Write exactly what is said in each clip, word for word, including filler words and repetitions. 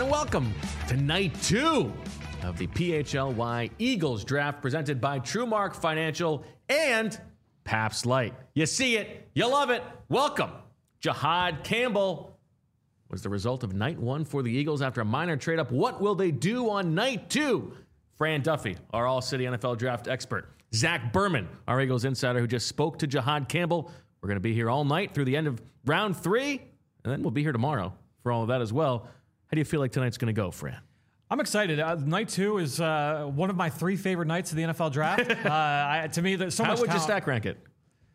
and welcome to night two of the P H L Y Eagles draft presented by TrueMark Financial and Pabst Light. You see it, you love it. Welcome. Jihaad Campbell was the result of night one for the Eagles after a minor trade-up. What will they do on night two? Fran Duffy, our All-City N F L draft expert. Zach Berman, our Eagles insider who just spoke to Jihaad Campbell. We're going to be here all night through the end of round three, and then we'll be here tomorrow for all of that as well. How do you feel like tonight's going to go, Fran? I'm excited. Uh, night two is uh, one of my three favorite nights of the N F L draft. uh, I, to me, there's so How much would talent. you stack rank it?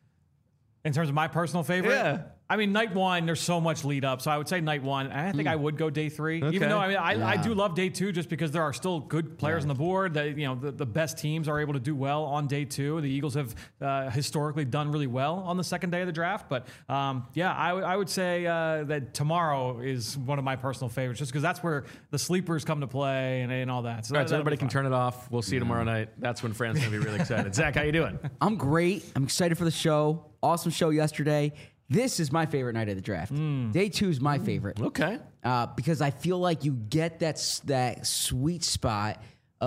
In terms of my personal favorite? Yeah. I mean, night one, there's so much lead up. So I would say night one. And I think mm. I would go day three. Okay. Even though I mean, I, yeah. I do love day two just because there are still good players yeah. on the board. That, you know, the, the best teams are able to do well on day two. The Eagles have uh, historically done really well on the second day of the draft. But um, yeah, I, w- I would say uh, that tomorrow is one of my personal favorites just because that's where the sleepers come to play and, and all that. So, all right, that, so everybody can turn it off. We'll see you tomorrow night. That's when Fran's going to be really excited. Zach, how you doing? I'm great. I'm excited for the show. Awesome show yesterday. This is my favorite night of the draft. Mm. Day two is my mm. favorite. Okay. Uh, because I feel like you get that that sweet spot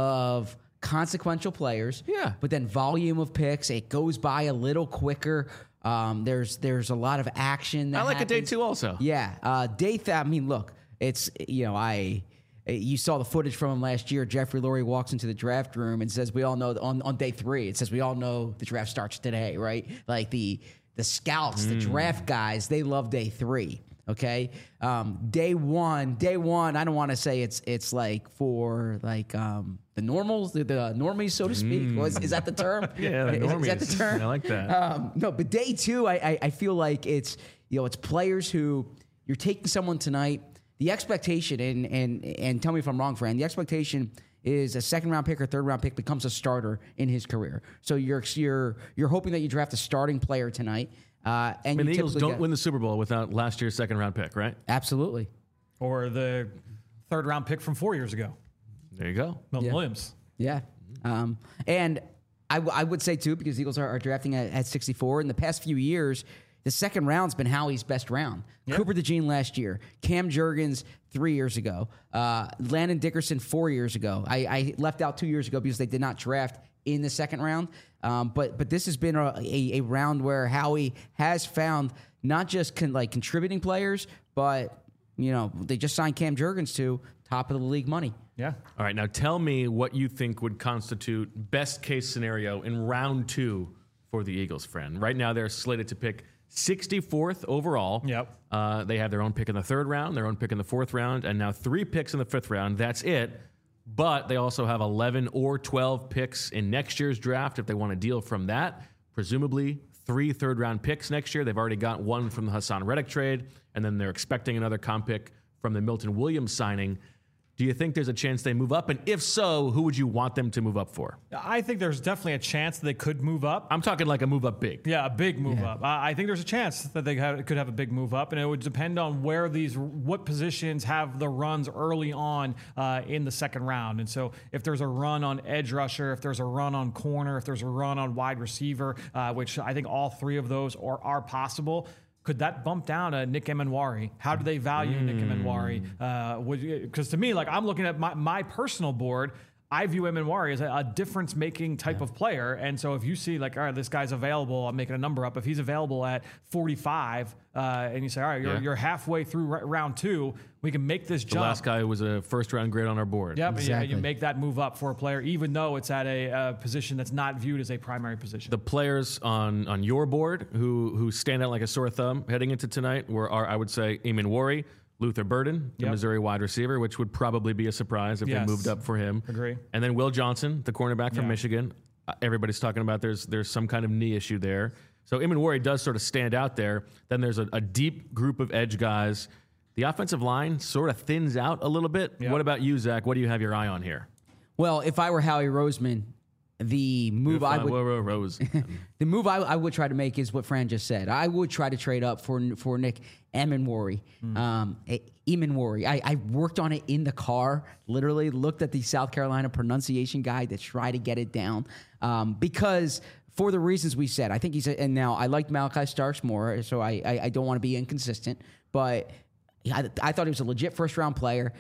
of consequential players. Yeah. But then volume of picks. It goes by a little quicker. Um, there's there's a lot of action. That I like happens. a day two also. Yeah. Uh, day th- I mean, look, it's, you know, I... You saw the footage from him last year. Jeffrey Lurie walks into the draft room and says, we all know on, on day three, it says we all know the draft starts today, right? Like the the scouts, mm. the draft guys, they love day three, okay? Um, day one, day one, I don't want to say it's it's like for like um, the normals, the, the normies, so to speak. Mm. Was, is that the term? Yeah, the normies. Is that the term? I like that. Um, no, but day two, I, I, I feel like it's, you know, it's players who you're taking someone tonight. The expectation, and and and tell me if I'm wrong, Fran, the expectation is a second round pick or third round pick becomes a starter in his career. So you're you're you're hoping that you draft a starting player tonight. Uh, and I mean, you the Eagles don't get, win the Super Bowl without last year's second round pick, right? Absolutely. Or the third round pick from four years ago. There you go. Milton yeah. Williams. Yeah. Um, and I, w- I would say, too, because the Eagles are, are drafting at, at sixty-four, in the past few years, the second round's been Howie's best round. Yep. Cooper DeJean last year, Cam Jurgens three years ago, uh, Landon Dickerson four years ago. I, I left out two years ago because they did not draft in the second round. Um, but but this has been a, a, a round where Howie has found not just con, like contributing players, but you know they just signed Cam Jurgens to top of the league money. Yeah. All right, now tell me what you think would constitute best case scenario in round two for the Eagles, friend. Right now they're slated to pick sixty-fourth overall. Yep. Uh, they have their own pick in the third round, their own pick in the fourth round, and now three picks in the fifth round. That's it. But they also have eleven or twelve picks in next year's draft if they want to deal from that. Presumably three third-round picks next year. They've already got one from the Hassan Reddick trade, and then they're expecting another comp pick from the Milton Williams signing. Do you think there's a chance they move up? And if so, who would you want them to move up for? I think there's definitely a chance that they could move up. I'm talking like a move up big. Yeah, a big move Yeah. up. I I think there's a chance that they have, could have a big move up, and it would depend on where these, what positions have the runs early on uh, in the second round. And so if there's a run on edge rusher, if there's a run on corner, if there's a run on wide receiver, uh, which I think all three of those are, are possible, could that bump down to Nick Emenwari? How do they value mm. Nick Emenwari? Because uh, to me, like I'm looking at my, my personal board, I view Emenwari as a, a difference-making type yeah. of player. And so if you see like, all right, this guy's available, I'm making a number up. If he's available at forty-five, uh, and you say, all right, you're, yeah. you're halfway through r- round two, we can make this The jump. last guy was a first-round grade on our board. Yep, exactly. yeah, you make that move up for a player, even though it's at a uh, position that's not viewed as a primary position. The players on, on your board who who stand out like a sore thumb heading into tonight were, are, I would say, Emenwari, Luther Burden, the Yep. Missouri wide receiver, which would probably be a surprise if Yes. they moved up for him. Agree. And then Will Johnson, the cornerback from Yeah. Michigan. Uh, everybody's talking about there's there's some kind of knee issue there. So Emenwari does sort of stand out there. Then there's a, a deep group of edge guys. The offensive line sort of thins out a little bit. Yep. What about you, Zach? What do you have your eye on here? Well, if I were Howie Roseman, the move I would Rose. the move I, I would try to make is what Fran just said. I would try to trade up for for Nick Emenwari. Mm. Um, Emenwari. I, I worked on it in the car. Literally looked at the South Carolina pronunciation guide to try to get it down um, because for the reasons we said. I think he's a, and now I liked Malachi Starks more, so I I, I don't want to be inconsistent, but I, I thought he was a legit first round player.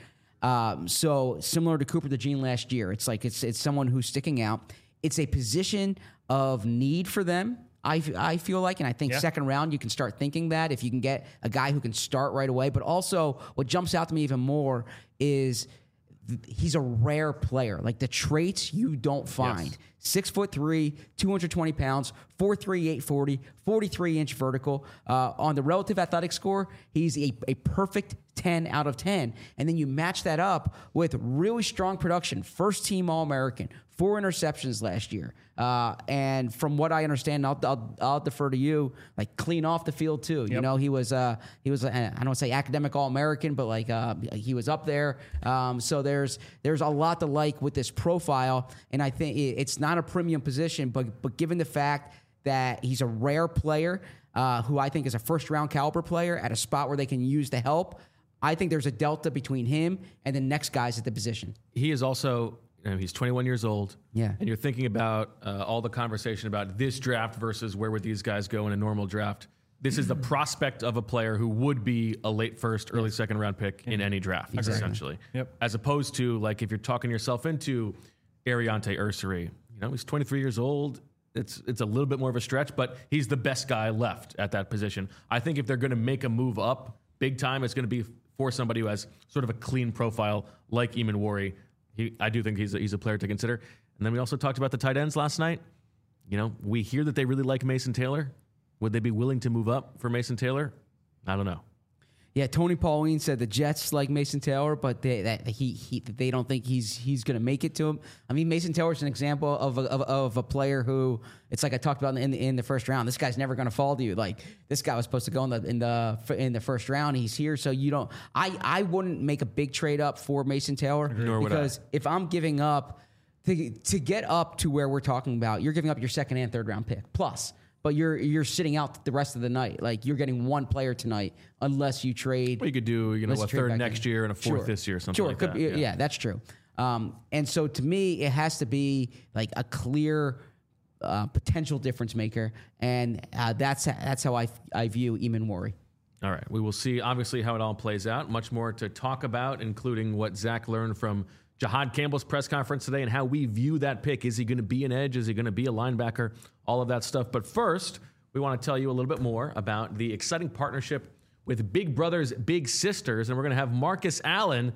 Um, so similar to Cooper DeJean last year, it's like it's it's someone who's sticking out. It's a position of need for them. I, I feel like, and I think yeah. second round, you can start thinking that if you can get a guy who can start right away. But also what jumps out to me even more is th- he's a rare player. Like the traits you don't find. Yes. Six foot three, two hundred twenty pounds, four three, eight forty, forty-three inch vertical. Uh, on the relative athletic score, he's a, a perfect ten out of ten. And then you match that up with really strong production. First team All-American, four interceptions last year. Uh, and from what I understand, I'll, I'll, I'll defer to you, like clean off the field too. Yep. You know, he was, uh, he was, uh, I don't say academic All-American, but like uh, he was up there. Um, so there's, there's a lot to like with this profile. And I think it's not a premium position, but, but given the fact that he's a rare player, uh, who I think is a first round caliber player at a spot where they can use the help, I think there's a delta between him and the next guys at the position. He is also, you know, he's twenty-one years old. Yeah. And you're thinking about uh, all the conversation about this draft versus where would these guys go in a normal draft. This is the prospect of a player who would be a late first, early second round pick in any draft, Exactly. essentially. Yep. As opposed to, like, if you're talking yourself into Ariante Ursary, you know, he's twenty-three years old. It's it's a little bit more of a stretch, but he's the best guy left at that position. I think if they're going to make a move up big time, it's going to be for somebody who has sort of a clean profile like Emmanwori. He, I do think he's a, he's a player to consider. And then we also talked about the tight ends last night. You know, we hear that they really like Mason Taylor. Would they be willing to move up for Mason Taylor? I don't know. Yeah, Tony Pauline said the Jets like Mason Taylor, but they that he, he they don't think he's he's going to make it to him. I mean, Mason Taylor's an example of a, of, of a player who it's like I talked about in the, in the first round. This guy's never going to fall to you. Like this guy was supposed to go in the in the in the first round. He's here, so you don't. I I wouldn't make a big trade up for Mason Taylor Nor would because I. if I'm giving up to to get up to where we're talking about, you're giving up your second and third round pick plus. But you're you're sitting out the rest of the night. Like you're getting one player tonight, unless you trade. Well, you could do you know Unless a you trade third back next in. year and a fourth Sure. this year, something sure, like could that. be- yeah. that's true. Um, and so to me, it has to be like a clear uh, potential difference maker, and uh, that's that's how I I view Emmanwori. All right. We will see, obviously, how it all plays out. Much more to talk about, including what Zach learned from Jahad Campbell's press conference today and how we view that pick. Is he going to be an edge? Is he going to be a linebacker? All of that stuff. But first, we want to tell you a little bit more about the exciting partnership with Big Brothers Big Sisters. And we're going to have Marcus Allen,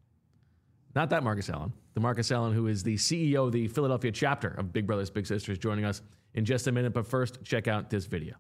not that Marcus Allen, the Marcus Allen who is the C E O of the Philadelphia chapter of Big Brothers Big Sisters, joining us in just a minute. But first, check out this video.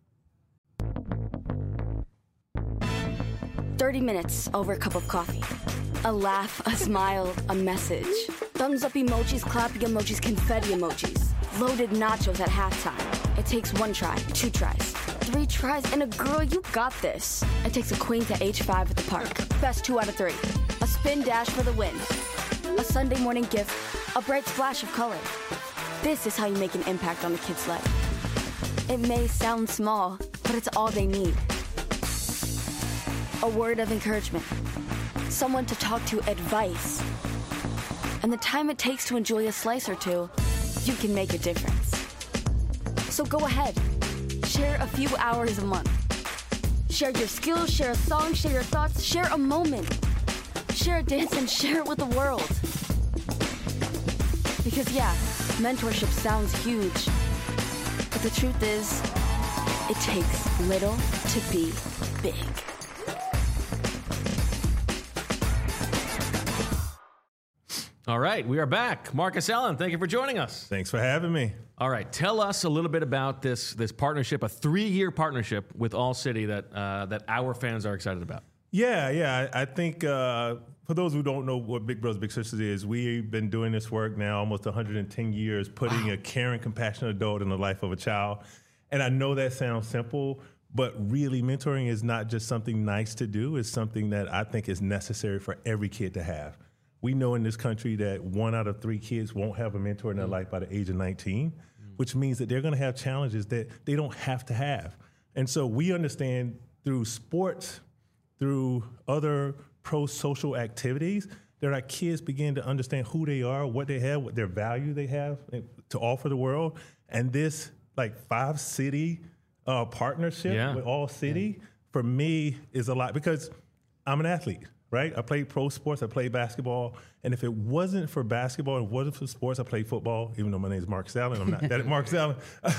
thirty minutes over a cup of coffee. A laugh, a smile, a message. Thumbs up emojis, clapping emojis, confetti emojis. Loaded nachos at halftime. It takes one try, two tries, three tries, and a girl, you got this. It takes a queen to H five at the park. Best two out of three. A spin dash for the win. A Sunday morning gift. A bright splash of color. This is how you make an impact on a kid's life. It may sound small, but it's all they need. A word of encouragement. Someone to talk to, advice. And the time it takes to enjoy a slice or two, you can make a difference. So go ahead, share a few hours a month. Share your skills, share a song, share your thoughts, share a moment. Share a dance and share it with the world. Because yeah, mentorship sounds huge, but the truth is, it takes little to be big. All right, we are back. Marcus Allen, thank you for joining us. Thanks for having me. All right, tell us a little bit about this this partnership, a three-year partnership with All City that uh, that our fans are excited about. Yeah, yeah. I, I think uh, for those who don't know what Big Brothers Big Sisters is, we've been doing this work now almost one hundred ten years, putting wow. a caring, compassionate adult in the life of a child. And I know that sounds simple, but really mentoring is not just something nice to do. It's something that I think is necessary for every kid to have. We know in this country that one out of three kids won't have a mentor in their mm. life by the age of nineteen, mm. which means that they're going to have challenges that they don't have to have. And so we understand through sports, through other pro-social activities, that our kids begin to understand who they are, what they have, what their value they have to offer the world. And this like five city uh, partnership yeah. with All City, yeah. for me, is a lot because I'm an athlete. right? I played pro sports. I played basketball. And if it wasn't for basketball and it wasn't for sports, I played football, even though my name is Mark Allen. I'm not that Mark Allen.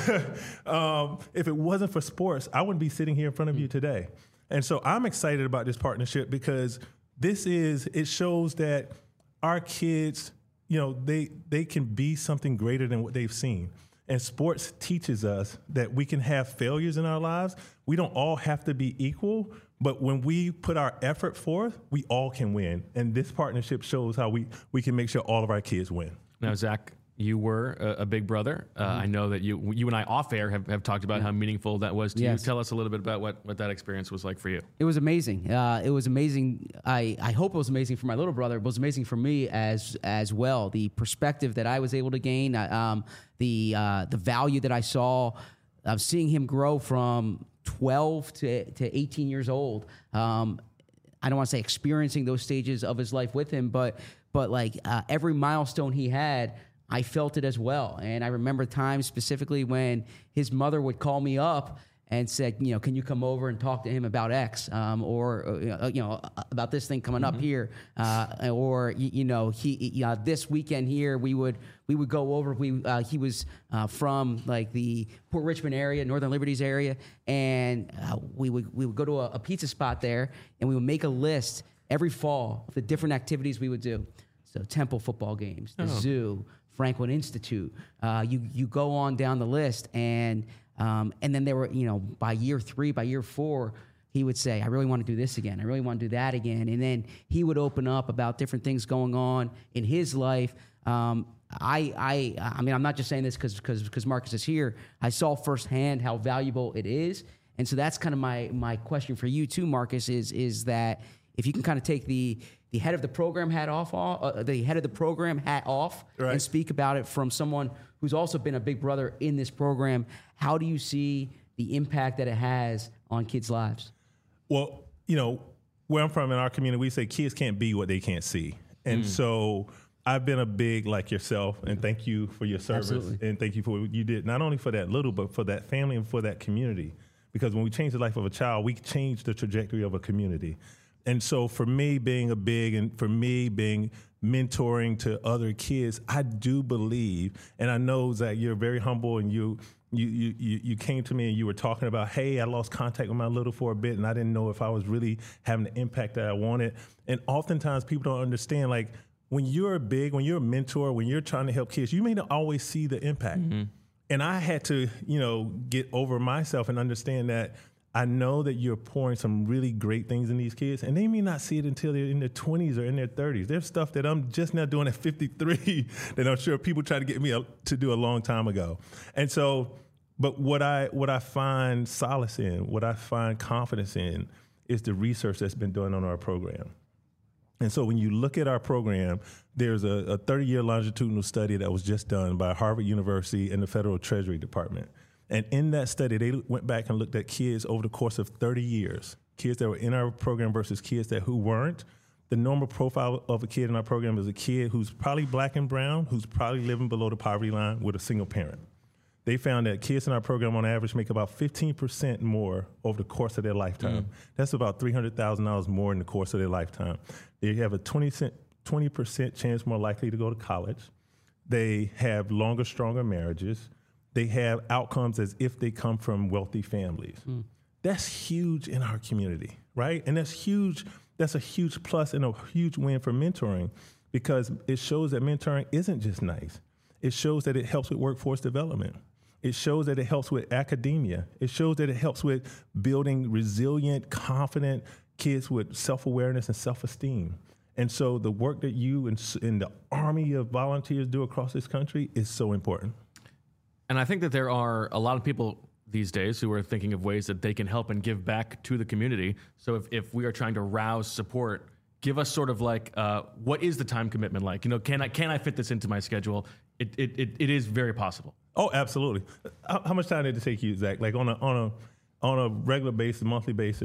um, if it wasn't for sports, I wouldn't be sitting here in front of you today. And so I'm excited about this partnership because this is, it shows that our kids, you know, they they can be something greater than what they've seen. And sports teaches us that we can have failures in our lives. We don't all have to be equal, but when we put our effort forth, we all can win. And this partnership shows how we, we can make sure all of our kids win. Now, Zach, you were a, a big brother. Uh, mm-hmm. I know that you you and I off air have, have talked about yeah. how meaningful that was to yes. you. Tell us a little bit about what, what that experience was like for you. It was amazing. Uh, it was amazing. I, I hope it was amazing for my little brother. It was amazing for me as as well. The perspective that I was able to gain, uh, um, the uh, the value that I saw of seeing him grow from twelve to, to eighteen years old. Um, I don't want to say experiencing those stages of his life with him, but but like uh, every milestone he had, I felt it as well. And I remember times specifically when his mother would call me up and said, you know, can you come over and talk to him about X, um, or, uh, you know, about this thing coming mm-hmm. up here, uh, or, you, you know, he, uh, this weekend here, we would, we would go over, we, uh, he was uh, from like the Port Richmond area, Northern Liberties area, and uh, we would, we would go to a, a pizza spot there, and we would make a list every fall of the different activities we would do. So Temple football games, the oh. zoo, Franklin Institute. Uh, you you go on down the list, and um, and then there were, you know, by year three, by year four, he would say, I really want to do this again. I really want to do that again. And then he would open up about different things going on in his life. Um, I I I mean, I'm not just saying this because because because Marcus is here. I saw firsthand how valuable it is, and so that's kind of my my question for you too, Marcus. Is is that if you can kind of take the the head of the program hat off, uh, the head of the program hat off, right. and speak about it from someone who's also been a big brother in this program. How do you see the impact that it has on kids' lives? Well, you know, where I'm from in our community, we say kids can't be what they can't see. And mm. so I've been a big, like yourself, and thank you for your service. Absolutely. And thank you for what you did, not only for that little, but for that family and for that community. Because when we change the life of a child, we change the trajectory of a community. And so for me being a big, and for me being mentoring to other kids, I do believe, and I know, Zach, you're very humble, and you you you you came to me and you were talking about, hey, I lost contact with my little for a bit, and I didn't know if I was really having the impact that I wanted. And oftentimes people don't understand, like, when you're big, when you're a mentor, when you're trying to help kids, you may not always see the impact. Mm-hmm. And I had to, you know, get over myself and understand that I know that you're pouring some really great things in these kids, and they may not see it until they're in their twenties or in their thirties. There's stuff that I'm just now doing at fifty-three that I'm sure people tried to get me to do a long time ago. And so, but what I what I find solace in, what I find confidence in, is the research that's been done on our program. And so when you look at our program, there's a thirty-year longitudinal study that was just done by Harvard University and the Federal Treasury Department. And in that study, they went back and looked at kids over the course of thirty years, kids that were in our program versus kids that who weren't. The normal profile of a kid in our program is a kid who's probably black and brown, who's probably living below the poverty line with a single parent. They found that kids in our program on average make about fifteen percent more over the course of their lifetime. Mm. That's about three hundred thousand dollars more in the course of their lifetime. They have a twenty percent chance more likely to go to college. They have longer, stronger marriages. They have outcomes as if they come from wealthy families. Mm. That's huge in our community, right? And that's huge. That's a huge plus and a huge win for mentoring, because it shows that mentoring isn't just nice. It shows that it helps with workforce development. It shows that it helps with academia. It shows that it helps with building resilient, confident kids with self-awareness and self-esteem. And so the work that you and, and the army of volunteers do across this country is so important. And I think that there are a lot of people these days who are thinking of ways that they can help and give back to the community. So if, if we are trying to rouse support, give us sort of like, uh, what is the time commitment like? You know, can I can I fit this into my schedule? It it it, it is very possible. Oh, absolutely. How, how much time did it take you, Zach? Like on a on a on a regular basis, monthly basis,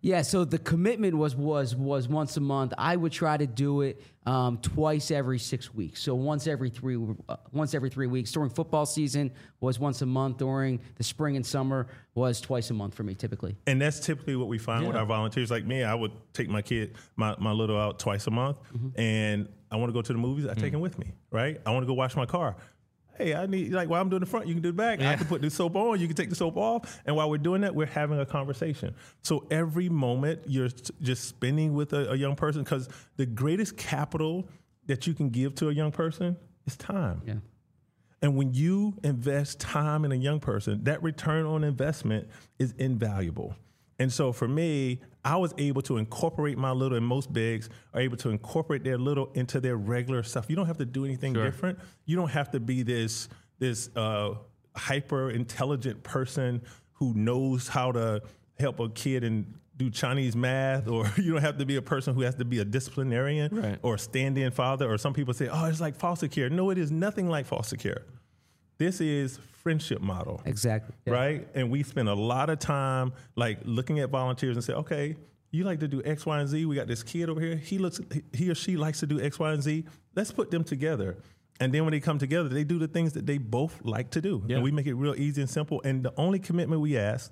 Yeah, so the commitment was was was once a month. I would try to do it um, twice every six weeks. So once every three uh, once every three weeks. During football season was once a month. During the spring and summer was twice a month for me typically. And that's typically what we find Yeah. with our volunteers. Like me, I would take my kid, my, my little out twice a month, Mm-hmm. and I want to go to the movies. I take Mm. him with me, right? I want to go wash my car. Hey, I need, like, while I'm doing the front, you can do the back. I can put the soap on, you can take the soap off. And while we're doing that, we're having a conversation. So every moment you're s- just spending with a, a young person, because the greatest capital that you can give to a young person is time. Yeah. And when you invest time in a young person, that return on investment is invaluable. And so for me, I was able to incorporate my little, and most bigs are able to incorporate their little into their regular stuff. You don't have to do anything Sure. different. You don't have to be this this uh, hyper intelligent person who knows how to help a kid and do Chinese math, or you don't have to be a person who has to be a disciplinarian Right. or a stand-in father, or some people say, oh, it's like foster care. No, it is nothing like foster care. This is friendship model. Exactly. Yeah. Right? And we spend a lot of time like looking at volunteers and say, okay, you like to do X, Y, and Z. We got this kid over here. He looks, he or she likes to do X, Y, and Z. Let's put them together. And then when they come together, they do the things that they both like to do. Yeah. And we make it real easy and simple. And the only commitment we ask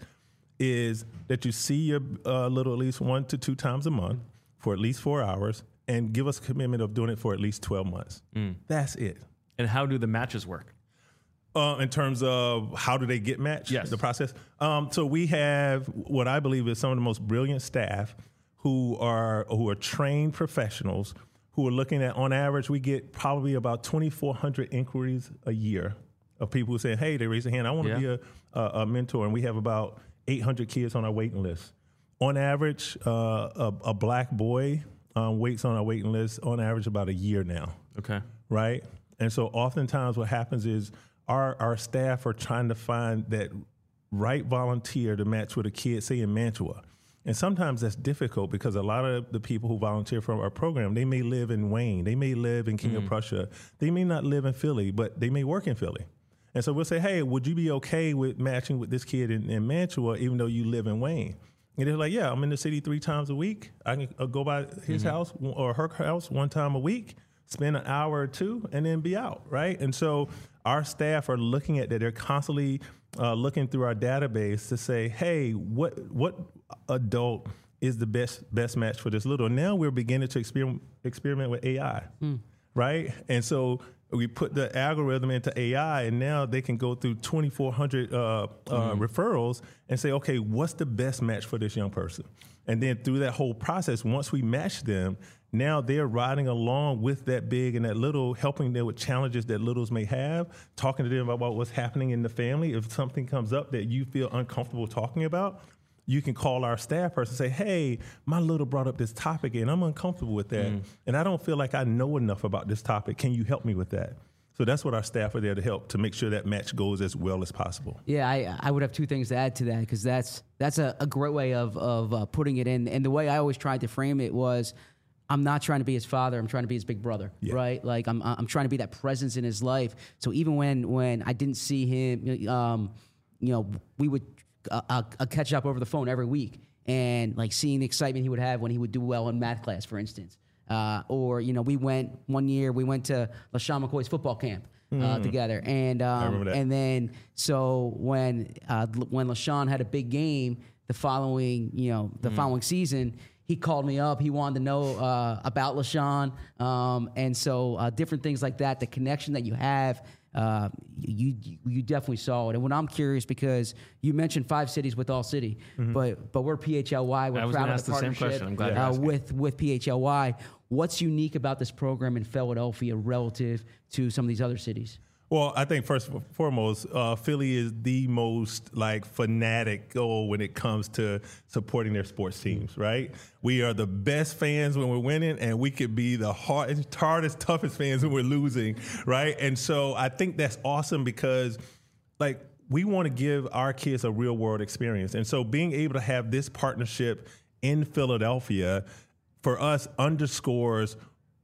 is that you see your uh, little at least one to two times a month for at least four hours and give us a commitment of doing it for at least twelve months. That's it. And how do the matches work? Uh, in terms of how do they get matched, Yes. the process. Um, so we have what I believe is some of the most brilliant staff who are who are trained professionals who are looking at, on average, we get probably about twenty-four hundred inquiries a year of people who say, hey, they raise their hand, I want to Yeah. be a, a, a mentor. And we have about eight hundred kids on our waiting list. On average, uh, a, a black boy um, waits on our waiting list on average about a year now. Okay. Right? And so oftentimes what happens is our our staff are trying to find that right volunteer to match with a kid, say in Mantua. And sometimes that's difficult because a lot of the people who volunteer for our program, they may live in Wayne, they may live in King of Prussia, they may not live in Philly, but they may work in Philly. And so we'll say, hey, would you be okay with matching with this kid in, in Mantua even though you live in Wayne? And they're like, yeah, I'm in the city three times a week. I can uh, go by his house or her house one time a week, spend an hour or two, and then be out, right? And so our staff are looking at that. They're constantly uh, looking through our database to say, hey, what what adult is the best best match for this little? Now we're beginning to experiment, experiment with A I, right? And so we put the algorithm into A I, and now they can go through twenty-four hundred uh, uh, referrals and say, okay, what's the best match for this young person? And then through that whole process, once we match them, now they're riding along with that big and that little, helping them with challenges that littles may have, talking to them about what's happening in the family. If something comes up that you feel uncomfortable talking about, you can call our staff person and say, hey, my little brought up this topic and I'm uncomfortable with that. And I don't feel like I know enough about this topic. Can you help me with that? So that's what our staff are there to help, to make sure that match goes as well as possible. Yeah, I, I would have two things to add to that because that's that's a, a great way of of uh, putting it in. And the way I always tried to frame it was, I'm not trying to be his father. I'm trying to be his big brother, Yeah. right? Like I'm I'm trying to be that presence in his life. So even when when I didn't see him, um, you know, we would uh, uh, uh, catch up over the phone every week, and like seeing the excitement he would have when he would do well in math class, for instance. Uh, or, you know, we went one year, we went to LaShawn McCoy's football camp uh, together. And um, remember that. and then so when uh, when LaShawn had a big game the following, you know, the following season, he called me up. He wanted to know uh, about LaShawn. Um, and so uh, different things like that, the connection that you have, uh, you you definitely saw it. And when I'm curious, because you mentioned five cities with All City, but but we're P H L Y. We're I was proud gonna of ask the the same partnership question. I'm glad you uh, asked it. with with P H L Y. What's unique about this program in Philadelphia relative to some of these other cities? Well, I think first and foremost, uh, Philly is the most like fanatic oh, when it comes to supporting their sports teams, right? We are the best fans when we're winning, and we could be the hardest, hardest, toughest fans when we're losing, right? And so I think that's awesome because, like, we want to give our kids a real world experience, and so being able to have this partnership in Philadelphia for us underscores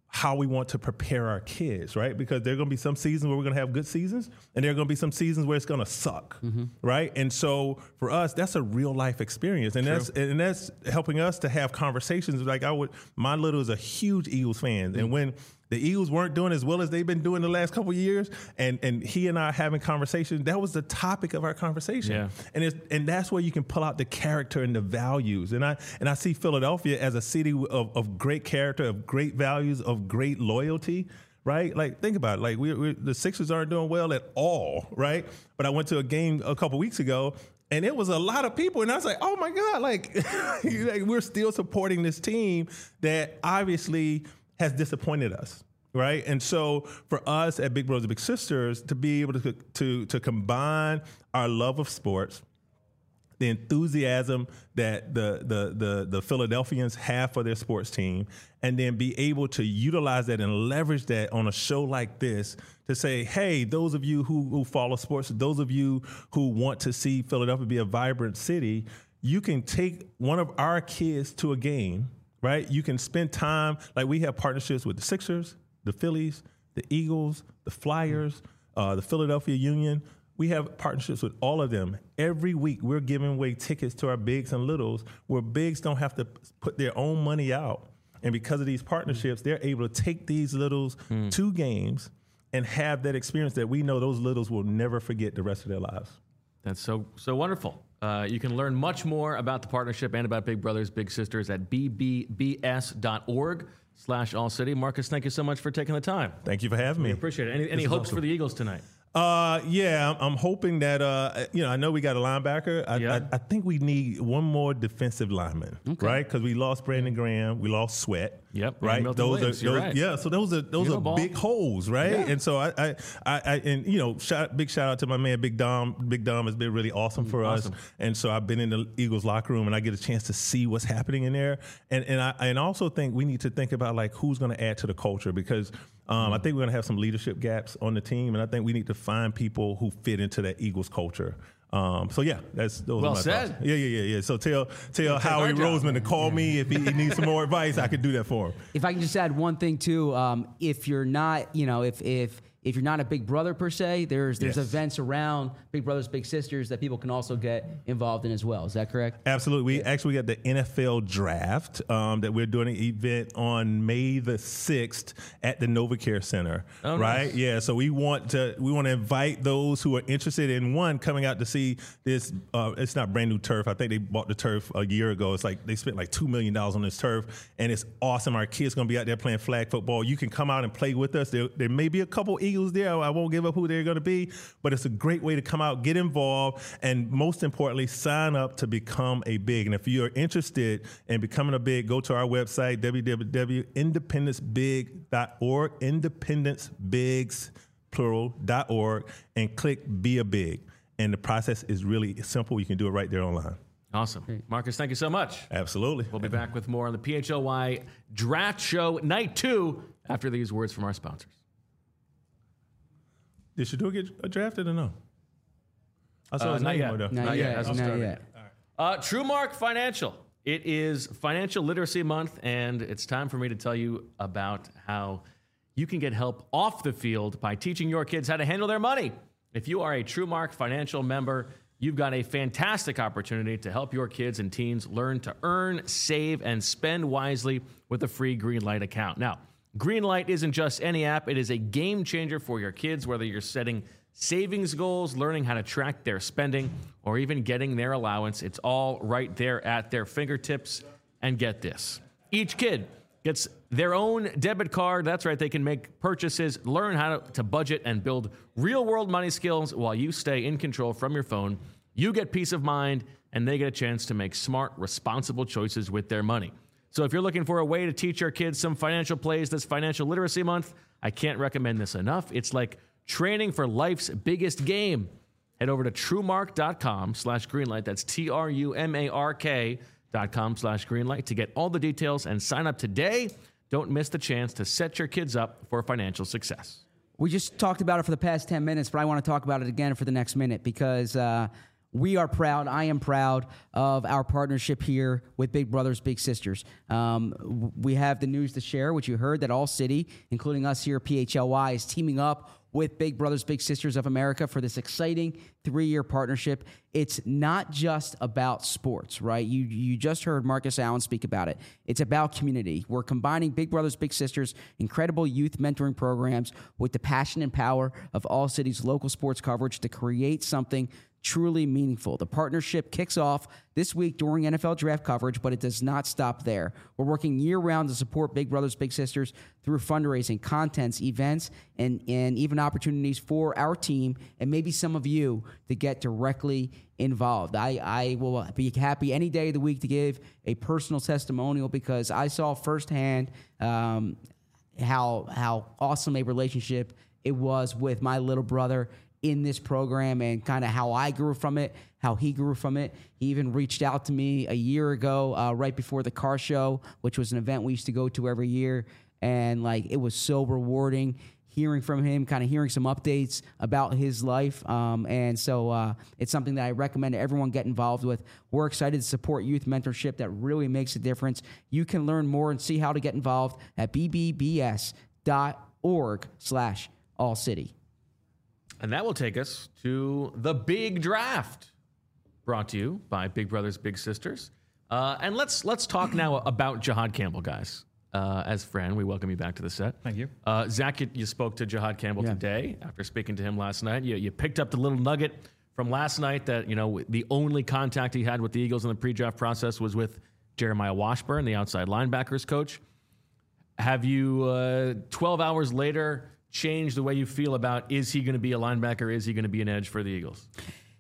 how we want to prepare our kids, right? Because there are going to be some seasons where we're going to have good seasons, and there are going to be some seasons where it's going to suck, mm-hmm. right? And so for us, that's a real life experience, and True. that's and that's helping us to have conversations. Like I would, my little is a huge Eagles fan, mm-hmm. and when the Eagles weren't doing as well as they've been doing the last couple of years, and and he and I having conversations, that was the topic of our conversation. Yeah. And it's, and that's where you can pull out the character and the values. And I and I see Philadelphia as a city of, of great character, of great values, of great loyalty. Right? Like, think about it. Like, we, we the Sixers aren't doing well at all, right? But I went to a game a couple weeks ago, and it was a lot of people, and I was like, oh, my God, like, like we're still supporting this team that obviously has disappointed us, right? And so for us at Big Brothers Big Sisters to be able to to to combine our love of sports, the enthusiasm that the the the the Philadelphians have for their sports team, and then be able to utilize that and leverage that on a show like this to say, hey, those of you who, who follow sports, those of you who want to see Philadelphia be a vibrant city, you can take one of our kids to a game, right? You can spend time, like we have partnerships with the Sixers, the Phillies, the Eagles, the Flyers, uh, the Philadelphia Union. We have partnerships with all of them. Every week, we're giving away tickets to our bigs and littles where bigs don't have to put their own money out. And because of these partnerships, they're able to take these littles mm. to games and have that experience that we know those littles will never forget the rest of their lives. That's so so wonderful. Uh, you can learn much more about the partnership and about Big Brothers Big Sisters at b b b s dot org slash all city. Marcus, thank you so much for taking the time. Thank you for having me. We appreciate it. Any, any hopes awesome. for the Eagles tonight? Uh, yeah, I'm, I'm hoping that, uh, you know, I know we got a linebacker. I, yeah. I, I think we need one more defensive lineman, okay. right? Because we lost Brandon Graham, we lost Sweat. Yep. Right. Those Williams, are those, right. yeah. So those are those are ball. big holes, right? Yeah. And so I, I, I, I, and you know, shout, big shout out to my man Big Dom. Big Dom has been really awesome for awesome. us. And so I've been in the Eagles locker room, and I get a chance to see what's happening in there. And and I and also think we need to think about like who's going to add to the culture, because um, I think we're going to have some leadership gaps on the team, and I think we need to find people who fit into that Eagles culture. Um, so yeah, that's those well are my said. thoughts. Yeah, yeah, yeah, yeah. So tell tell Howie Roseman to call yeah. me if he, he needs some more advice. I could do that for him. If I can just add one thing too, um, if you're not, you know, if if if you're not a big brother per se, there's there's yes. events around Big Brothers Big Sisters that people can also get involved in as well. Is that correct? Absolutely. We yeah. actually got the N F L draft um, that we're doing an event on May the sixth at the NovaCare Center. Oh, right? Nice. Yeah. So we want to we want to invite those who are interested in one coming out to see this. Uh, it's not brand new turf. I think they bought the turf a year ago. It's like they spent like two million dollars on this turf, and it's awesome. Our kids going to be out there playing flag football. You can come out and play with us. There, there may be a couple Eagles there. I won't give up who they're going to be, but it's a great way to come out, get involved, and most importantly, sign up to become a big. And if you're interested in becoming a big, go to our website, w w w dot independence big dot org, independence bigs, plural, dot org, and click Be a Big. And the process is really simple. You can do it right there online. Awesome. Great. Marcus, thank you so much. Absolutely. We'll be back with more on the P H L Y Draft Show Night two after these words from our sponsors. Did Shador get drafted or no? I saw uh, his not name yet. over there. Not, not yet. yet. Hasn't Not started yet. All right. Uh, TrueMark Financial. It is Financial Literacy Month, and it's time for me to tell you about how you can get help off the field by teaching your kids how to handle their money. If you are a TrueMark Financial member, you've got a fantastic opportunity to help your kids and teens learn to earn, save, and spend wisely with a free Greenlight account. Now, Greenlight isn't just any app. It is a game changer for your kids, whether you're setting savings goals, learning how to track their spending, or even getting their allowance. It's all right there at their fingertips. And get this. Each kid gets their own debit card. That's right. They can make purchases, learn how to, to budget, and build real-world money skills while you stay in control from your phone. You get peace of mind, and they get a chance to make smart, responsible choices with their money. So if you're looking for a way to teach your kids some financial plays this Financial Literacy Month, I can't recommend this enough. It's like training for life's biggest game. Head over to truemark.com slash greenlight. That's T R U M A R K dot com slash greenlight to get all the details and sign up today. Don't miss the chance to set your kids up for financial success. We just talked about it for the past ten minutes, but I want to talk about it again for the next minute because uh, we are proud, I am proud of our partnership here with Big Brothers Big Sisters. Um, we have the news to share, which you heard, that All City, including us here at P H L Y, is teaming up with Big Brothers Big Sisters of America for this exciting three-year partnership. It's not just about sports, right? You you just heard Marcus Allen speak about it. It's about community. We're combining Big Brothers Big Sisters' incredible youth mentoring programs with the passion and power of All City's local sports coverage to create something truly meaningful. The partnership kicks off this week during N F L draft coverage, but it does not stop there. We're working year-round to support Big Brothers Big Sisters through fundraising, contents, events, and, and even opportunities for our team and maybe some of you to get directly involved. I, I will be happy any day of the week to give a personal testimonial because I saw firsthand um, how how awesome a relationship it was with my little brother in this program and kind of how I grew from it, how he grew from it. He even reached out to me a year ago, uh, right before the car show, which was an event we used to go to every year. And like, it was so rewarding hearing from him, kind of hearing some updates about his life. Um, and so uh, it's something that I recommend everyone get involved with. We're excited to support youth mentorship that really makes a difference. You can learn more and see how to get involved at b b b s dot org slash all city. And that will take us to the big draft, brought to you by Big Brothers Big Sisters. Uh, and let's let's talk now about Jihaad Campbell, guys. Uh, as Fran, we welcome you back to the set. Thank you. Uh, Zach, you, you spoke to Jihaad Campbell yeah. today after speaking to him last night. You, you picked up the little nugget from last night that, you know, the only contact he had with the Eagles in the pre-draft process was with Jeremiah Washburn, the outside linebackers coach. Have you, uh, twelve hours later, change the way you feel about, is he going to be a linebacker? Is he going to be an edge for the Eagles?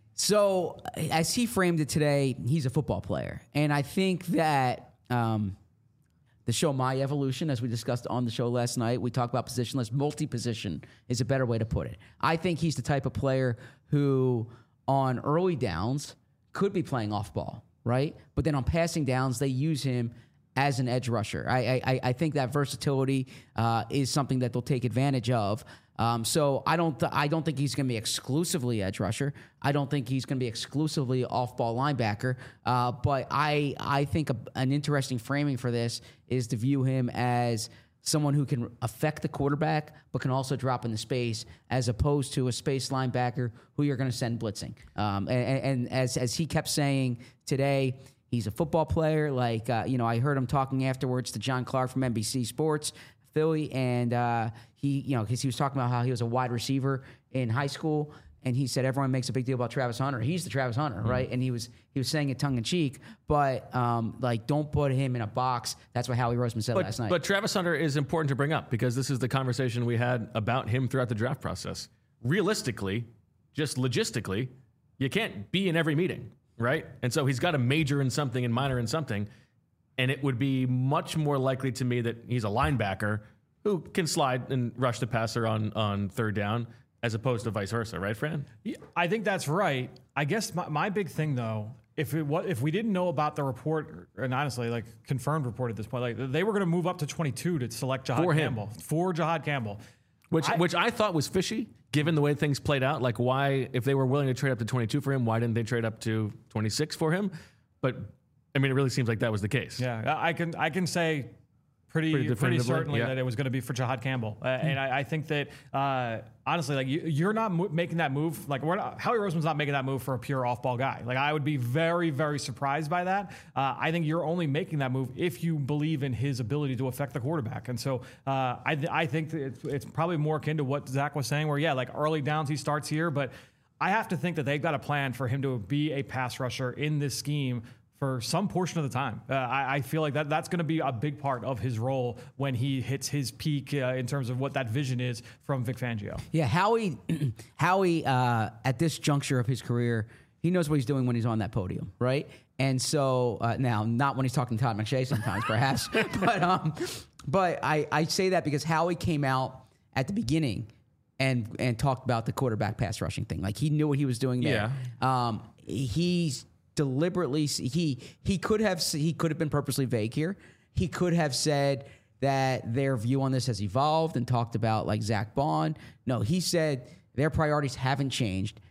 So as he framed it today, he's a football player. And I think that um, the show My Evolution, as we discussed on the show last night, we talked about positionless. Multi-position is a better way to put it. I think he's the type of player who on early downs could be playing off ball, right? But then on passing downs, they use him as an edge rusher. I I, I think that versatility uh, is something that they'll take advantage of. Um, so I don't th- I don't think he's going to be exclusively edge rusher. I don't think he's going to be exclusively off-ball linebacker. Uh, but I I think a, an interesting framing for this is to view him as someone who can affect the quarterback but can also drop into space, as opposed to a space linebacker who you're going to send blitzing. Um, and, and as as he kept saying today, he's a football player. Like, uh, you know, I heard him talking afterwards to John Clark from N B C Sports Philly, and uh, he, you know, because he was talking about how he was a wide receiver in high school, and he said everyone makes a big deal about Travis Hunter. He's the Travis Hunter, mm-hmm. right? And he was he was saying it tongue in cheek, but um, like, don't put him in a box. That's what Howie Roseman said but, last night. But Travis Hunter is important to bring up because this is the conversation we had about him throughout the draft process. Realistically, just logistically, you can't be in every meeting. Right? And so he's got to major in something and minor in something. And it would be much more likely to me that he's a linebacker who can slide and rush the passer on, on third down as opposed to vice versa. Right, Fran? Yeah, I think that's right. I guess my, my big thing, though, if it, what, if we didn't know about the report, and honestly, like confirmed report at this point, like they were going to move up to twenty-two to select Jihaad for Campbell. Him. For Jihaad Campbell. Which, I, which I thought was fishy, given the way things played out. Like, why, if they were willing to trade up to twenty-two for him, why didn't they trade up to twenty-six for him? But, I mean, it really seems like that was the case. Yeah, I can I can say pretty pretty, pretty certainly yeah. that it was going to be for Jihaad Campbell. Uh, mm-hmm. And I, I think that, uh, honestly, like you, you're not mo- making that move. Like, we're not, Howie Roseman's not making that move for a pure off-ball guy. Like, I would be very, very surprised by that. Uh, I think you're only making that move if you believe in his ability to affect the quarterback. And so uh, I, th- I think that it's, it's probably more akin to what Zach was saying, where, yeah, like early downs he starts here, but I have to think that they've got a plan for him to be a pass rusher in this scheme for some portion of the time. Uh, I, I feel like that that's going to be a big part of his role when he hits his peak uh, in terms of what that vision is from Vic Fangio. Yeah, Howie, Howie uh, at this juncture of his career, he knows what he's doing when he's on that podium, right? And so, uh, now, not when he's talking to Todd McShay sometimes, perhaps, but um, but I, I say that because Howie came out at the beginning and and talked about the quarterback pass rushing thing. Like, he knew what he was doing there. Yeah. Um, he's deliberately he he could have he could have been purposely vague here. He could have said that their view on this has evolved and talked about like Zach Bond. No, he said their priorities haven't changed.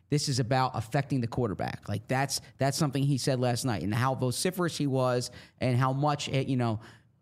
This is about affecting the quarterback. Like that's that's something he said last night, and how vociferous he was, and how much it, you know,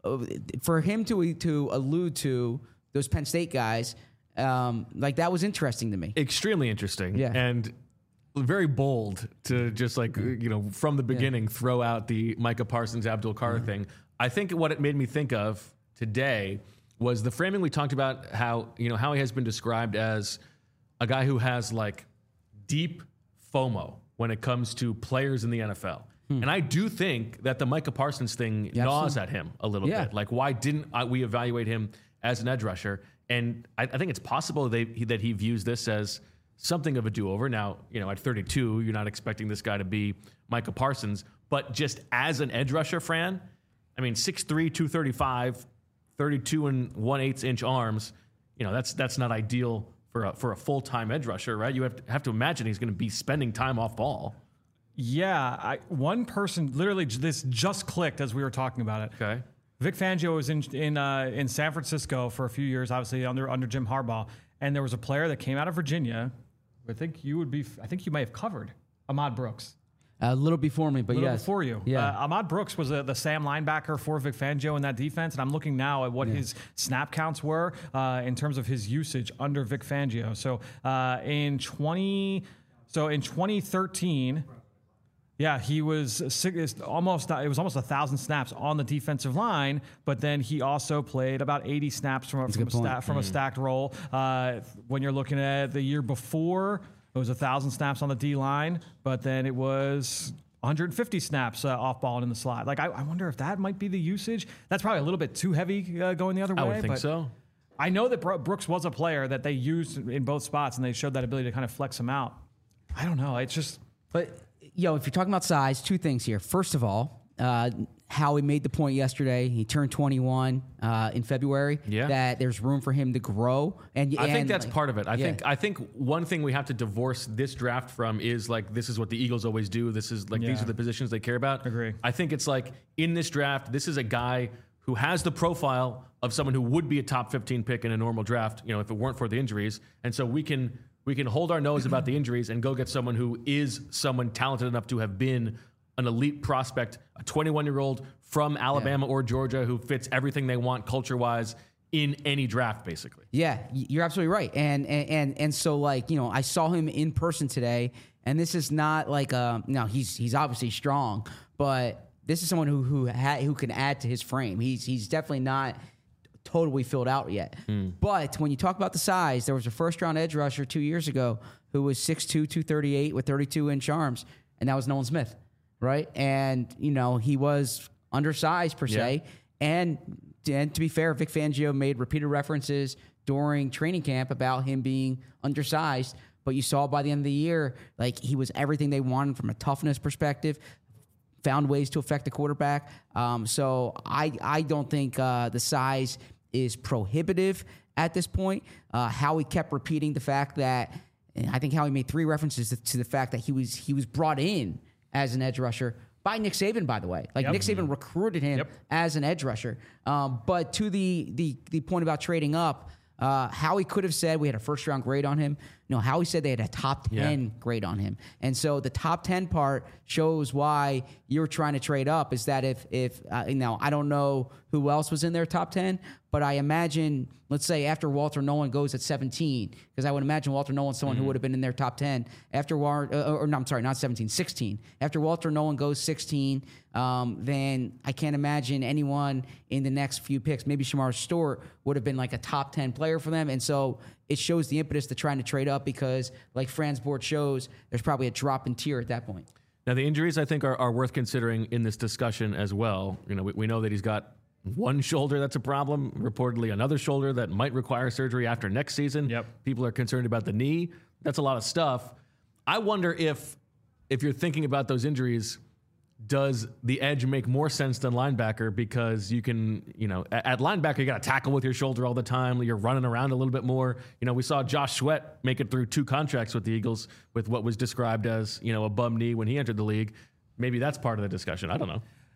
for him to to allude to those Penn State guys, um, like that was interesting to me. Extremely interesting, yeah, and very bold to just like you know from the beginning yeah. throw out the Micah Parsons Abdul Carr mm-hmm. thing. I think what it made me think of today was the framing we talked about. How you know how he has been described as a guy who has like deep FOMO when it comes to players in the N F L. Hmm. And I do think that the Micah Parsons thing yeah, gnaws at him a little yeah. bit. Like, why didn't I, we evaluate him as an edge rusher? And I, I think it's possible they, he, that he views this as something of a do-over. Now, you know, at thirty-two, you're not expecting this guy to be Micah Parsons. But just as an edge rusher, Fran, I mean, six three, two thirty-five, thirty-two and one-eighth inch arms, you know, that's that's not ideal for a, for a full-time edge rusher, right? You have to, have to imagine he's going to be spending time off ball. Yeah, I, one person, literally this just clicked as we were talking about it. Okay. Vic Fangio was in in uh, in San Francisco for a few years, obviously under under Jim Harbaugh, and there was a player that came out of Virginia. I think you would be, I think you may have covered Ahmad Brooks. A little before me, but a little yes. before you. Yeah. Uh, Ahmad Brooks was a, the Sam linebacker for Vic Fangio in that defense, and I'm looking now at what yeah. his snap counts were uh, in terms of his usage under Vic Fangio. So uh, in twenty, so in twenty thirteen, yeah, he was six, almost it was almost a thousand snaps on the defensive line, but then he also played about eighty snaps from a, from a, sta- from mm. a stacked role. Uh, when you're looking at the year before, it was one thousand snaps on the D-line, but then it was one hundred fifty snaps uh, off ball and in the slot. Like, I, I wonder if that might be the usage. That's probably a little bit too heavy uh, going the other way. I would think but so. I know that Brooks was a player that they used in both spots, and they showed that ability to kind of flex him out. I don't know. It's just... But, yo, if you're talking about size, two things here. First of all, uh, Howie made the point yesterday. He turned twenty-one uh, in February. Yeah. That there's room for him to grow. And I and, think that's like, part of it. I yeah. think I think one thing we have to divorce this draft from is like this is what the Eagles always do. This is like yeah. these are the positions they care about. Agree. I think it's like in this draft, this is a guy who has the profile of someone who would be a top fifteen pick in a normal draft. You know, if it weren't for the injuries, and so we can we can hold our nose about the injuries and go get someone who is someone talented enough to have been an elite prospect, a twenty-one-year-old from Alabama yeah. or Georgia who fits everything they want culture-wise in any draft, basically. Yeah, you're absolutely right. And and and, and so, like, you know, I saw him in person today, and this is not like, a, no, he's he's obviously strong, but this is someone who who ha- who can add to his frame. He's he's definitely not totally filled out yet. Mm. But when you talk about the size, there was a first-round edge rusher two years ago who was six two, two thirty-eight with thirty-two inch arms, and that was Nolan Smith. Right. And, you know, he was undersized per se. Yeah. And, and to be fair, Vic Fangio made repeated references during training camp about him being undersized. But you saw by the end of the year, like, he was everything they wanted from a toughness perspective, found ways to affect the quarterback. Um, so I, I don't think uh, the size is prohibitive at this point. Uh, Howie kept repeating the fact that, and I think Howie made three references to, to the fact that he was he was brought in as an edge rusher by Nick Saban, by the way. Like, yep. Nick Saban recruited him yep. as an edge rusher. Um, but to the the the point about trading up, uh, Howie could have said we had a first-round grade on him. No, Howie said they had a top ten yeah. grade on him. And so the top ten part shows why you're trying to trade up, is that if, if uh, now, I don't know who else was in their top ten, but I imagine, let's say after Walter Nolan goes at seventeen, because I would imagine Walter Nolan's someone mm-hmm. who would have been in their top ten. After War, uh, or no, I'm sorry, not seventeen, sixteen. After Walter Nolan goes sixteen, um, then I can't imagine anyone in the next few picks, maybe Shamar Stewart, would have been like a top ten player for them. And so it shows the impetus to trying to trade up because, like Fran's board shows, there's probably a drop in tier at that point. Now, the injuries, I think, are, are worth considering in this discussion as well. You know, we, we know that he's got one shoulder that's a problem, reportedly another shoulder that might require surgery after next season. Yep. People are concerned about the knee. That's a lot of stuff. I wonder if, if you're thinking about those injuries, does the edge make more sense than linebacker? Because you can, you know, at, at linebacker, you got to tackle with your shoulder all the time. You're running around a little bit more. You know, we saw Josh Sweat make it through two contracts with the Eagles with what was described as, you know, a bum knee when he entered the league. Maybe that's part of the discussion. I don't know.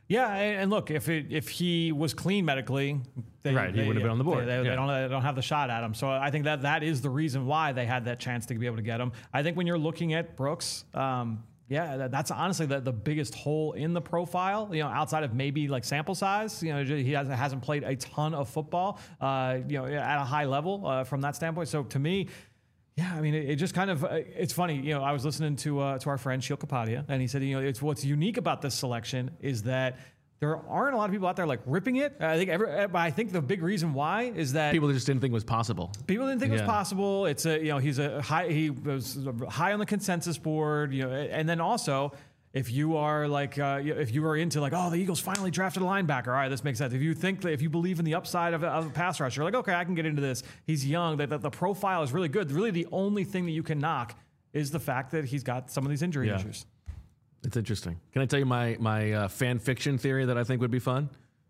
Yeah, and, and look, if it, if he was clean medically, they, right, he they, would have been on the board. They, they, yeah. they, don't, they don't have the shot at him. So I think that that is the reason why they had that chance to be able to get him. I think when you're looking at Brooks, um, yeah, that, that's honestly the, the biggest hole in the profile, you know, outside of maybe like sample size. You know, he hasn't, hasn't played a ton of football, uh, you know, at a high level uh, from that standpoint. So to me, yeah, I mean, it, it just kind of, uh, it's funny, you know, I was listening to uh, to our friend Sheil Kapadia, and he said, you know, it's what's unique about this selection is that there aren't a lot of people out there like ripping it. I think every, but I think the big reason why is that people just didn't think it was possible. People didn't think yeah. it was possible. It's a, you know, he's a high, he was high on the consensus board, you know, and then also, if you are like, uh, if you are into like, oh, the Eagles finally drafted a linebacker. All right, this makes sense. If you think that, if you believe in the upside of, of a pass rusher, you're like, okay, I can get into this. He's young. That the, the profile is really good. Really, the only thing that you can knock is the fact that he's got some of these injury yeah. issues. It's interesting. Can I tell you my my uh, fan fiction theory that I think would be fun?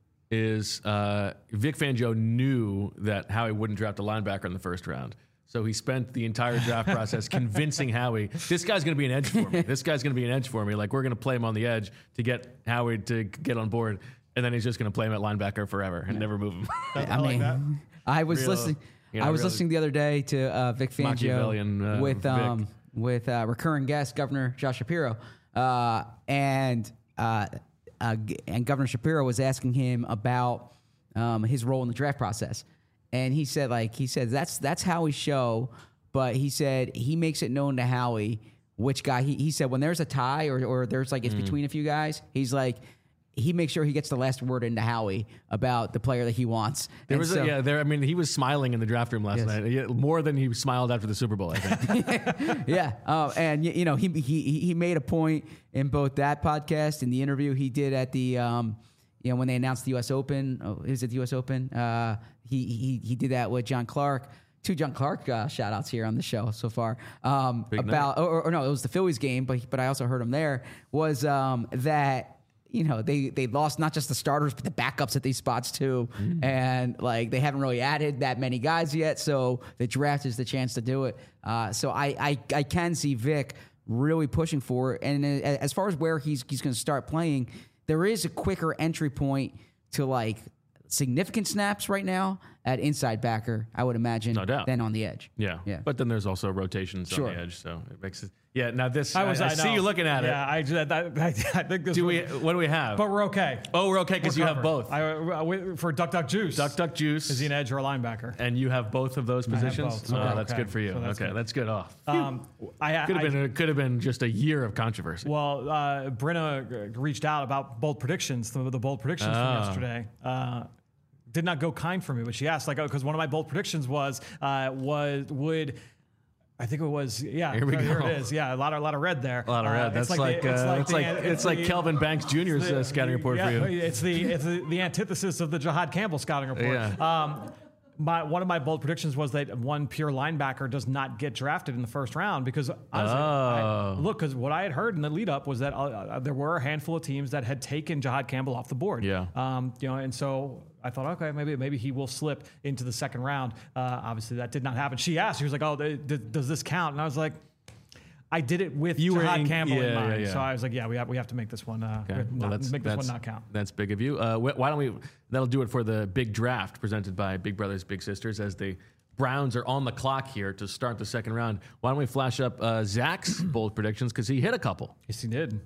Is uh, Vic Fangio knew that Howie wouldn't draft a linebacker in the first round. So he spent the entire draft process convincing Howie, this guy's going to be an edge for me. This guy's going to be an edge for me. Like, we're going to play him on the edge to get Howie to get on board. And then he's just going to play him at linebacker forever and yeah. never move him. I, I mean, like I was Real, listening. you know, I was really listening the other day to uh, Vic Fangio uh, with um, Vic. with uh, recurring guest Governor Josh Shapiro, uh, and uh, uh, and Governor Shapiro was asking him about um, his role in the draft process. And he said, like, he said, that's that's Howie's show, but he said he makes it known to Howie which guy. He, he said when there's a tie or, or there's like it's mm. between a few guys, he's like, he makes sure he gets the last word into Howie about the player that he wants. There and was so, a, yeah, there. I mean, he was smiling in the draft room last yes. night, yeah, more than he smiled after the Super Bowl, I think. yeah, uh, and you know, he he he made a point in both that podcast and the interview he did at the. Um, You know, when they announced the U S Open, oh, is it the U S Open? Uh, he he he did that with John Clark. Two John Clark uh, shout outs here on the show so far. Um, about or, or no, it was the Phillies game, but but I also heard him there. Was um, that you know they they lost not just the starters but the backups at these spots too, mm. and like they haven't really added that many guys yet. So the draft is the chance to do it. Uh, so I, I I can see Vic really pushing for it. And as far as where he's he's going to start playing. There is a quicker entry point to like significant snaps right now at inside backer, I would imagine, no doubt. than on the edge. Yeah, yeah. But then there's also rotations sure. on the edge, so it makes it. Yeah. Now this, I, was, I, I, I see you looking at yeah, it. Yeah, I, I, I think this. Do was, we? What do we have? But we're okay. Oh, we're okay because you have both. I, uh, for Duck Duck Juice. Duck Duck Juice. Is he an edge or a linebacker? And you have both of those positions. Both, so oh, that's okay. good for you. So that's okay, good. that's good. Oh, um, I could have I, been. It could have been just a year of controversy. Well, uh, Brenna reached out about bold predictions. The, the bold predictions oh. from yesterday. Uh, did not go kind for me, but she asked, like, oh, because one of my bold predictions was, uh, was would, I think it was, yeah, here we go. Here it is, yeah, a lot of a lot of red there. A lot of red. Uh, That's like, like, the, it's uh, like it's like, the, it's like the, Kelvin Banks Junior's the, uh, scouting report yeah, for you. It's the it's the, the antithesis of the Jahad Campbell scouting report. Yeah. Um, My, one of my bold predictions was that one pure linebacker does not get drafted in the first round because honestly, oh. I, look, because what I had heard in the lead up was that uh, uh, there were a handful of teams that had taken Jahad Campbell off the board. Yeah. Um, you know, and so I thought, okay, maybe maybe he will slip into the second round. Uh, obviously, that did not happen. She asked, she was like, "Oh, th- th- does this count?" And I was like, I did it with you Jahad in, Campbell yeah, in mind. Yeah, yeah. So I was like, yeah, we have we have to make this one uh, okay. not, well, make this one not count. That's big of you. Uh, wh- why don't we? That'll do it for the big draft presented by Big Brothers Big Sisters as the Browns are on the clock here to start the second round. Why don't we flash up uh, Zach's bold predictions because he hit a couple. Yes, he did.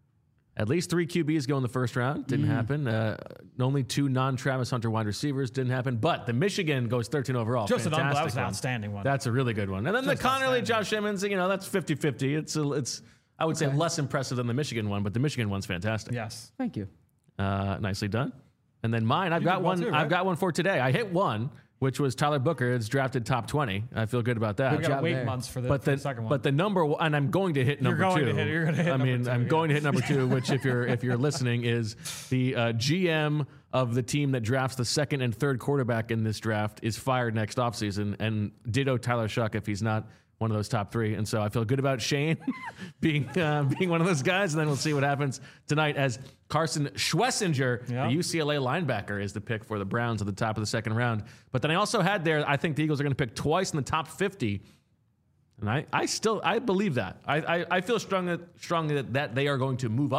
At least three Q Bs go in the first round. Didn't mm. happen. Uh, only two non-Travis Hunter wide receivers. Didn't happen. But the Michigan goes thirteen overall. Just Fantastic an, that was an one. outstanding one. That's a really good one. And then Just the Connerly, Josh Emmons, you know, that's fifty-fifty. It's, a, it's I would okay. say, less impressive than the Michigan one, but the Michigan one's fantastic. Yes. Thank you. Uh, nicely done. And then mine, I've you got one. Too, right? I've got one for today. I hit one, which was Tyler Booker. It's drafted top twenty. I feel good about that. We got to wait there. months for the, but for the, the second one. But the number, one, and I'm going to hit number you're going two. To hit, you're going to hit. I mean, two, I'm yeah. going to hit number two, which if you're if you're listening, is the uh, G M of the team that drafts the second and third quarterback in this draft is fired next offseason, and ditto Tyler Shuck if he's not one of those top three. And so I feel good about Shane being uh, being one of those guys. And then we'll see what happens tonight as Carson Schwessinger, yep. the U C L A linebacker, is the pick for the Browns at the top of the second round. But then I also had there, I think the Eagles are going to pick twice in the top fifty. And I, I still, I believe that. I, I, I feel strongly, strongly that, that they are going to move up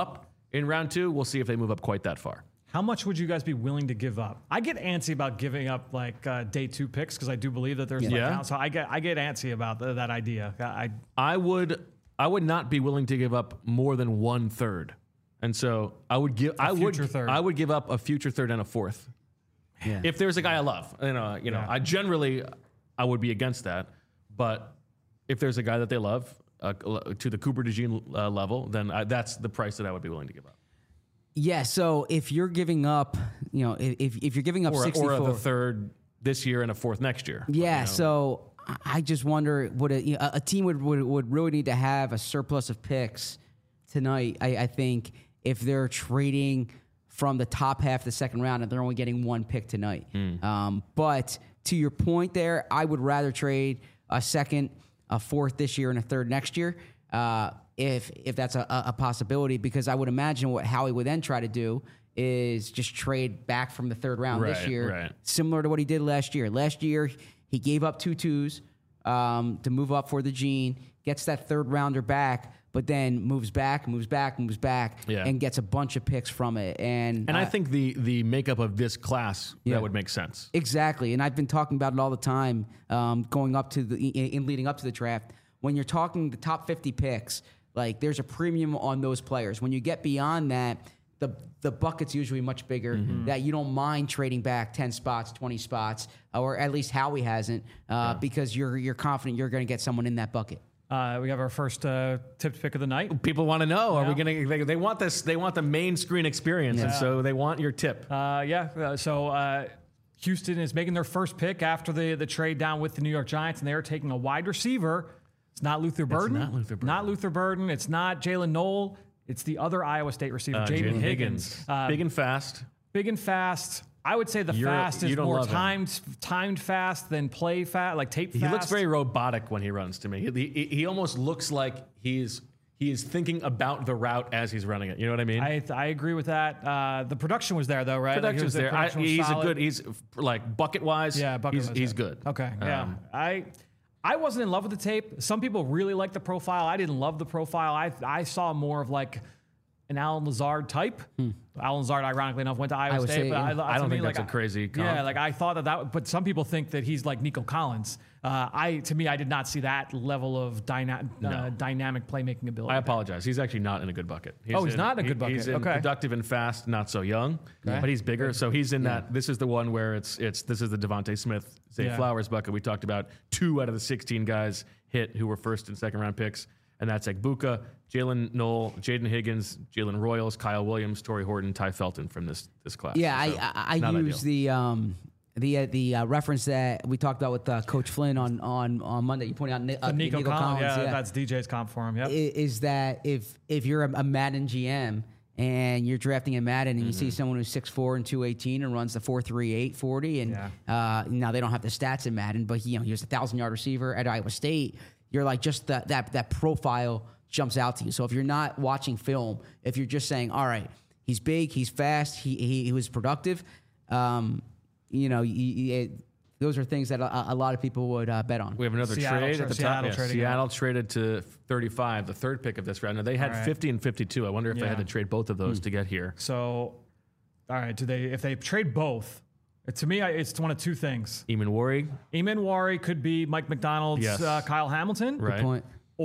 in round two. We'll see if they move up quite that far. How much would you guys be willing to give up? I get antsy about giving up like uh, day two picks because I do believe that there's Yeah. like, Yeah. so I get I get antsy about th- that idea. I I would I would not be willing to give up more than one third, and so I would give I would future third. I would give up a future third and a fourth. Yeah. If there's a guy I love, you know, you know, Yeah. I generally I would be against that, but if there's a guy that they love uh, to the Cooper DeJean uh, level, then I, that's the price that I would be willing to give up. Yeah, so if you're giving up, you know, if if you're giving up Or, sixty-four, or the third this year and a fourth next year. yeah. You know? So I just wonder, would a, you know, a team would, would would really need to have a surplus of picks tonight? I, I think if they're trading from the top half of the second round and they're only getting one pick tonight. Mm. Um, but to your point there, I would rather trade a second, a fourth this year, and a third next year. Uh, if if that's a, a possibility, because I would imagine what Howie would then try to do is just trade back from the third round this Right, year, right. similar to what he did last year. Last year, he gave up two twos um, to move up for the Gene, gets that third rounder back, but then moves back, moves back, moves back, Yeah. and gets a bunch of picks from it. And And I uh, think the the makeup of this class Yeah. that would make sense. Exactly, and I've been talking about it all the time, um, going up to the in, in leading up to the draft. When you're talking the top fifty picks, like there's a premium on those players. When you get beyond that, the the bucket's usually much bigger. Mm-hmm. That you don't mind trading back ten spots, twenty spots, or at least Howie hasn't, uh, because you're you're confident you're going to get someone in that bucket. uh, we have our first uh, tipped pick of the night. People want to know: Are we Yeah. going to? They, they want this. They want the main screen experience, and so they want your tip. Uh, yeah. uh, So uh, Houston is making their first pick after the the trade down with the New York Giants, and they are taking a wide receiver. It's not Luther Burden. not Luther Burden. Not Luther Burden. It's not Jalen Knoll. It's the other Iowa State receiver, Uh, Jaden Jaden Higgins. Uh, big and fast. big and fast. I would say the You're- fast you is don't more love him. timed timed fast than play fast, like tape fast. He looks very robotic when he runs to me. He, he, he almost looks like he's he is thinking about the route as he's running it. You know what I mean? I, I agree with that. Uh, the production was there though, right? Like, it Production's was- the there. I, production was he's solid. a good. He's like bucket wise. Yeah, bucket He's was he's good. good. Okay, yeah. Um, I I wasn't in love with the tape. Some people really like the profile. I didn't love the profile. I I saw more of like an Alan Lazard type. Alan Lazard, ironically enough, went to Iowa, Iowa State, State, but yeah. I, I to don't me, think like, that's a crazy comp. Yeah, like I thought that that. But some people think that he's like Nico Collins. Uh, I to me, I did not see that level of dyna- uh, dynamic playmaking ability. I apologize. He's actually not in a good bucket. He's Oh, he's not in a good he- bucket. He's in Okay. productive and fast, not so young, Okay. but he's bigger. So he's in that. This is the one where it's it's this is the Devontae Smith, Zay Yeah. Flowers bucket. We talked about two out of the sixteen guys hit who were first and second round picks, and that's Egbuka, Jalen Knoll, Jaden Higgins, Jalen Royals, Kyle Williams, Torrey Horton, Ty Felton from this this class. Yeah, So, I I, I not use ideal. the um the uh, the uh, reference that we talked about with uh, Coach Flynn on on on Monday. You pointed out Ni- uh, The Nico, Nico Collins, Collins. yeah, that's D J's comp for him. Yep. i- is that if if you're a, a Madden G M and you're drafting a Madden and you Mm-hmm. see someone who's six four and two eighteen and runs the four three eight forty and Yeah. uh, now they don't have the stats in Madden, but he, you know he was a thousand yard receiver at Iowa State. You're like just that that that profile jumps out to you. So if you're not watching film, if you're just saying, all right, he's big, he's fast, he he, he was productive, um, you know, you, you, it, those are things that a, a lot of people would uh, bet on. We have another Seattle trade tra- at the Seattle top. Yeah, trading Seattle traded to thirty-five, the third pick of this round. Now they had All right. fifty and fifty-two. I wonder if they Yeah. had to trade both of those to get here. So, all right, do they if they trade both? To me, I- it's one of two things. Eamon Worry, Eamon Wari could be Mike McDonald's Yes. uh, Kyle Hamilton, right? Point.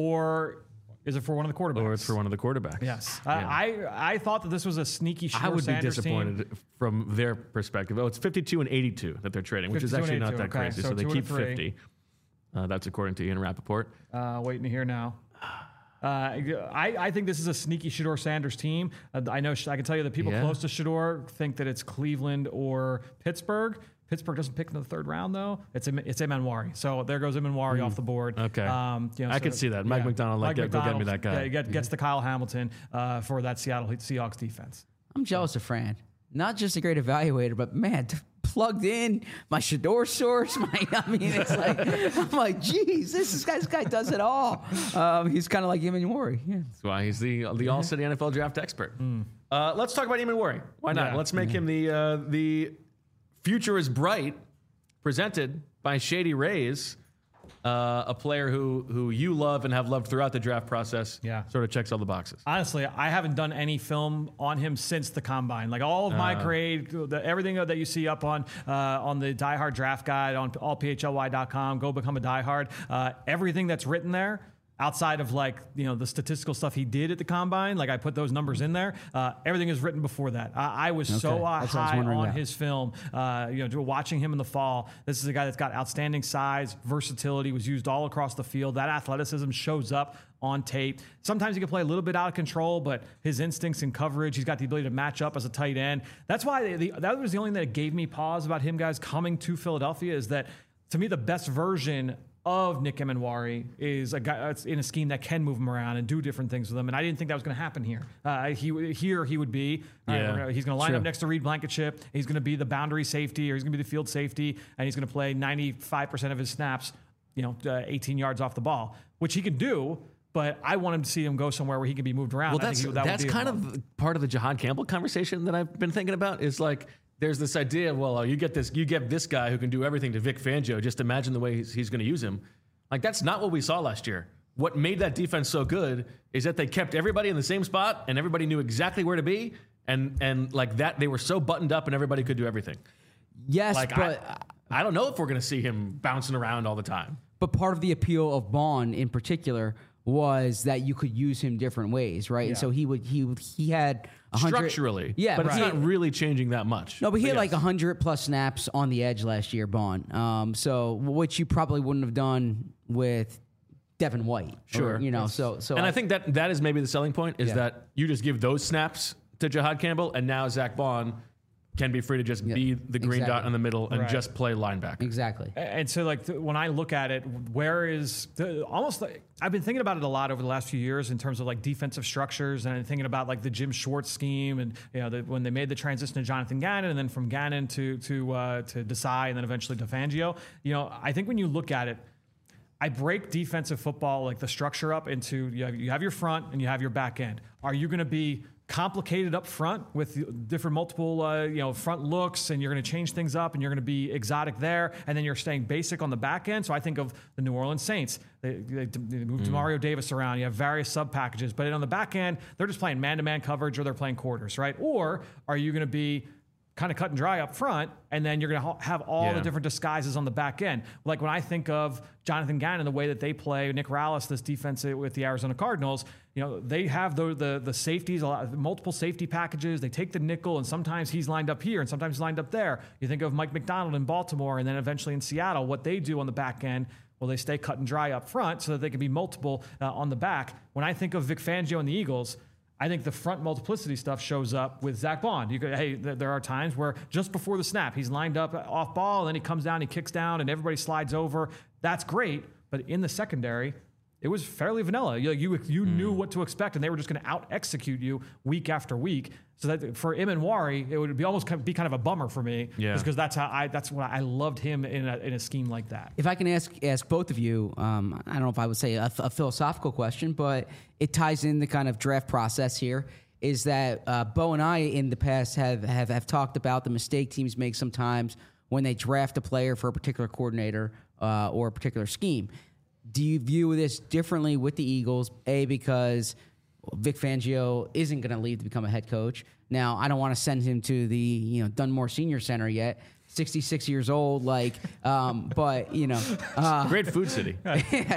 or is it for one of the quarterbacks? Or it's for one of the quarterbacks. Yes, Yeah. I, I I thought that this was a sneaky. I Shedeur would be Sanders disappointed team. from their perspective. Oh, it's fifty-two and eighty-two that they're trading, which is fifty-two and actually not eighty-two, that okay. crazy. So So, they two and keep three. fifty. Uh, that's according to Ian Rappaport. Uh, waiting to hear now. Uh, I, I think this is a sneaky Shedeur Sanders team. Uh, I know I can tell you that people Yeah. close to Shedeur think that it's Cleveland or Pittsburgh. Pittsburgh doesn't pick in the third round though. It's Im- it's Imanwari. So there goes Imanwari off the board. Okay. Um, you know, I so- could see that. Mike McDonald, like, Mike go get me McDonald, that guy. Yeah, get, gets the Kyle Hamilton uh, for that Seattle Seahawks defense. I'm jealous of Fran. Not just a great evaluator, but man, t- plugged in my Shedeur source. My, I mean, it's like I'm like, geez, this, is, this guy does it all. Um, he's kind of like Eamon Wari. Yeah. That's why he's the the All City N F L draft expert. Uh, let's talk about Eamon Worry. Why not? Yeah. Let's make him the uh, the future is bright, presented by Shady Rays. uh, a player who who you love and have loved throughout the draft process. Yeah. Sort of checks all the boxes. Honestly, I haven't done any film on him since the combine. Like all of my Uh. grade, the, everything that you see up on uh, on the Die Hard draft guide on all p h l y dot com, go become a Die Hard. Uh, everything that's written there, outside of like, you know, the statistical stuff he did at the combine, like I put those numbers in there. Uh, everything is written before that. I, I was Okay. so uh, That's what I was high wondering on about. his film. Uh, you know, watching him in the fall. This is a guy that's got outstanding size, versatility, was used all across the field. That athleticism shows up on tape. Sometimes he can play a little bit out of control, but his instincts and coverage, he's got the ability to match up as a tight end. That's why the, the, that was the only thing that gave me pause about him, guys, coming to Philadelphia, is that to me the best version of Nick Emenwari is a guy that's in a scheme that can move him around and do different things with him. And I didn't think that was going to happen here. Uh, he here he would be. all right, Yeah. we're gonna- he's going to line True. up next to Reed Blankenship. He's going to be the boundary safety, or he's going to be the field safety, and he's going to play ninety-five percent of his snaps, you know, uh, eighteen yards off the ball, which he can do. But I want him to see him go somewhere where he can be moved around. Well, I that's think he, that would that's be a kind problem. of part of the Jahan Campbell conversation that I've been thinking about. Is like there's this idea of, well, you get this, you get this guy who can do everything to Vic Fangio. Just imagine the way he's, he's going to use him. Like that's not what we saw last year. What made that defense so good is that they kept everybody in the same spot and everybody knew exactly where to be, and and like that they were so buttoned up and everybody could do everything. Yes, Like but I, I don't know if we're going to see him bouncing around all the time. But part of the appeal of Bond in particular was that you could use him different ways, right? And so he would he would, he had a hundred Structurally, yeah, but it's he not had- really changing that much. No, but he had yes. like a hundred plus snaps on the edge last year, Bond. Um, so which you probably wouldn't have done with Devin White, Sure. or, you know. So so and I, think that that is maybe the selling point is Yeah. that you just give those snaps to Jahad Campbell, and now Zach Bond can be free to just Yeah, be the green exactly. dot in the middle and Right. just play linebacker. exactly. And so, like, th- when I look at it, where is the, almost like I've been thinking about it a lot over the last few years in terms of like defensive structures, and thinking about like the Jim Schwartz scheme, and you know the, when they made the transition to Jonathan Gannon, and then from Gannon to to uh, to Desai, and then eventually to Fangio. You know, I think when you look at it, I break defensive football, like the structure, up into you have, you have your front and you have your back end. Are you going to be complicated up front with different multiple uh, you know front looks, and you're going to change things up, and you're going to be exotic there, and then you're staying basic on the back end? So I think of the New Orleans Saints. They, they, they moved Mario Davis around. You have various sub packages, but on the back end, they're just playing man-to-man coverage, or they're playing quarters, right? Or are you going to be kind of cut and dry up front, and then you're going to ha- have all Yeah. the different disguises on the back end? Like when I think of Jonathan Gannon, the way that they play, Nick Rallis, this defense with the Arizona Cardinals, you know, they have the the, the safeties, a lot, multiple safety packages. They take the nickel, and sometimes he's lined up here, and sometimes he's lined up there. You think of Mike McDonald in Baltimore, and then eventually in Seattle, what they do on the back end. Well, they stay cut and dry up front so that they can be multiple uh, on the back. When I think of Vic Fangio and the Eagles, I think the front multiplicity stuff shows up with Zach Bond. You could, hey, th- there are times where just before the snap, he's lined up off ball, and then he comes down, he kicks down, and everybody slides over. That's great, but in the secondary, it was fairly vanilla. You you, you knew what to expect, and they were just going to out execute you week after week. So that for Emenwari, it would be almost kind of be kind of a bummer for me, Yeah. because that's how I that's what I loved him in a, in a scheme like that. If I can ask ask both of you, um, I don't know if I would say a, a philosophical question, but it ties in the kind of draft process here. Is that uh, Bo and I in the past have, have have talked about the mistake teams make sometimes when they draft a player for a particular coordinator uh, or a particular scheme. Do you view this differently with the Eagles? A, because Vic Fangio isn't going to leave to become a head coach. Now, I don't want to send him to the you know Dunmore Senior Center yet. sixty-six years old, like, um, but you know, uh, Great food city. uh,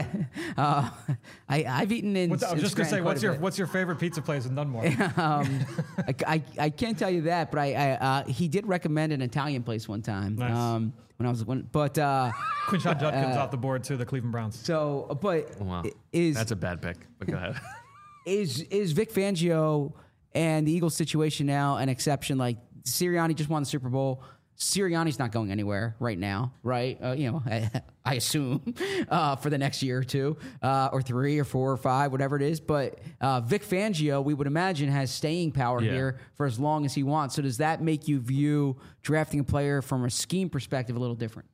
I, I've eaten in. What's, I was in just gonna Scranton say, quite what's a your bit. what's your favorite pizza place in Dunmore? um, I, I, I can't tell you that, but I, I uh, he did recommend an Italian place one time. Nice. Um, when I was when, but uh, Quinshon Judkins off the board too, the Cleveland Browns. so but Wow. is That's a bad pick, but go ahead. is is Vic Fangio and the Eagles situation now an exception? Like Sirianni just won the Super Bowl. Sirianni's not going anywhere right now, right? Uh, you know, I, I assume uh, for the next year or two, uh, or three, or four, or five, whatever it is. But uh, Vic Fangio, we would imagine, has staying power Yeah. here for as long as he wants. So does that make you view drafting a player from a scheme perspective a little different?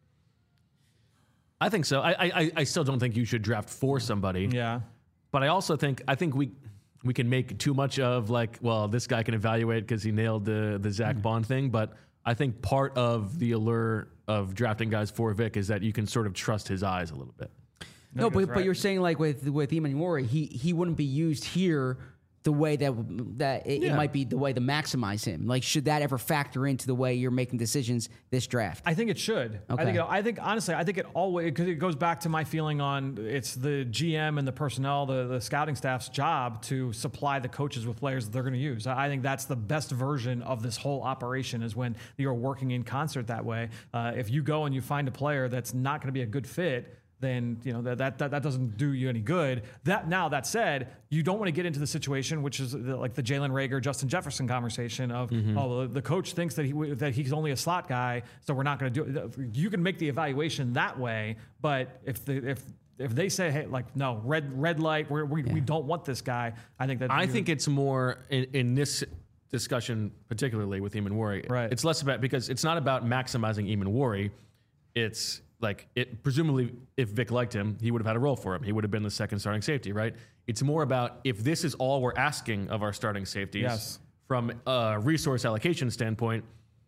I think so. I, I I still don't think you should draft for somebody. Yeah. But I also think I think we we can make too much of like, well, this guy can evaluate because he nailed the the Zach Bond thing. But I think part of the allure of drafting guys for Vic is that you can sort of trust his eyes a little bit. No, but right. but you're saying like with with Imaniwari, he he wouldn't be used here the way that that it, Yeah. it might be the way to maximize him. Like, should that ever factor into the way you're making decisions this draft? I think it should. Okay. I think. It, I think honestly, I think it always because it goes back to my feeling on it's the G M and the personnel, the the scouting staff's job to supply the coaches with players that they're going to use. I think that's the best version of this whole operation is when you're working in concert that way. Uh, if you go and you find a player that's not going to be a good fit, then you know that, that that that doesn't do you any good. That now that said, you don't want to get into the situation which is the, like the Jalen Reagor, Justin Jefferson conversation of Mm-hmm. oh well, the coach thinks that he that he's only a slot guy, so we're not going to do it. You can make the evaluation that way, but if the if if they say hey like no red red light we're, we we don't want this guy, I think that I you- think it's more in, in this discussion, particularly with Imaniwari. Right. It's less about because it's not about maximizing Imaniwari. It's like it presumably if Vic liked him, he would have had a role for him. He would have been the second starting safety, right? It's more about if this is all we're asking of our starting safeties Yes. from a resource allocation standpoint.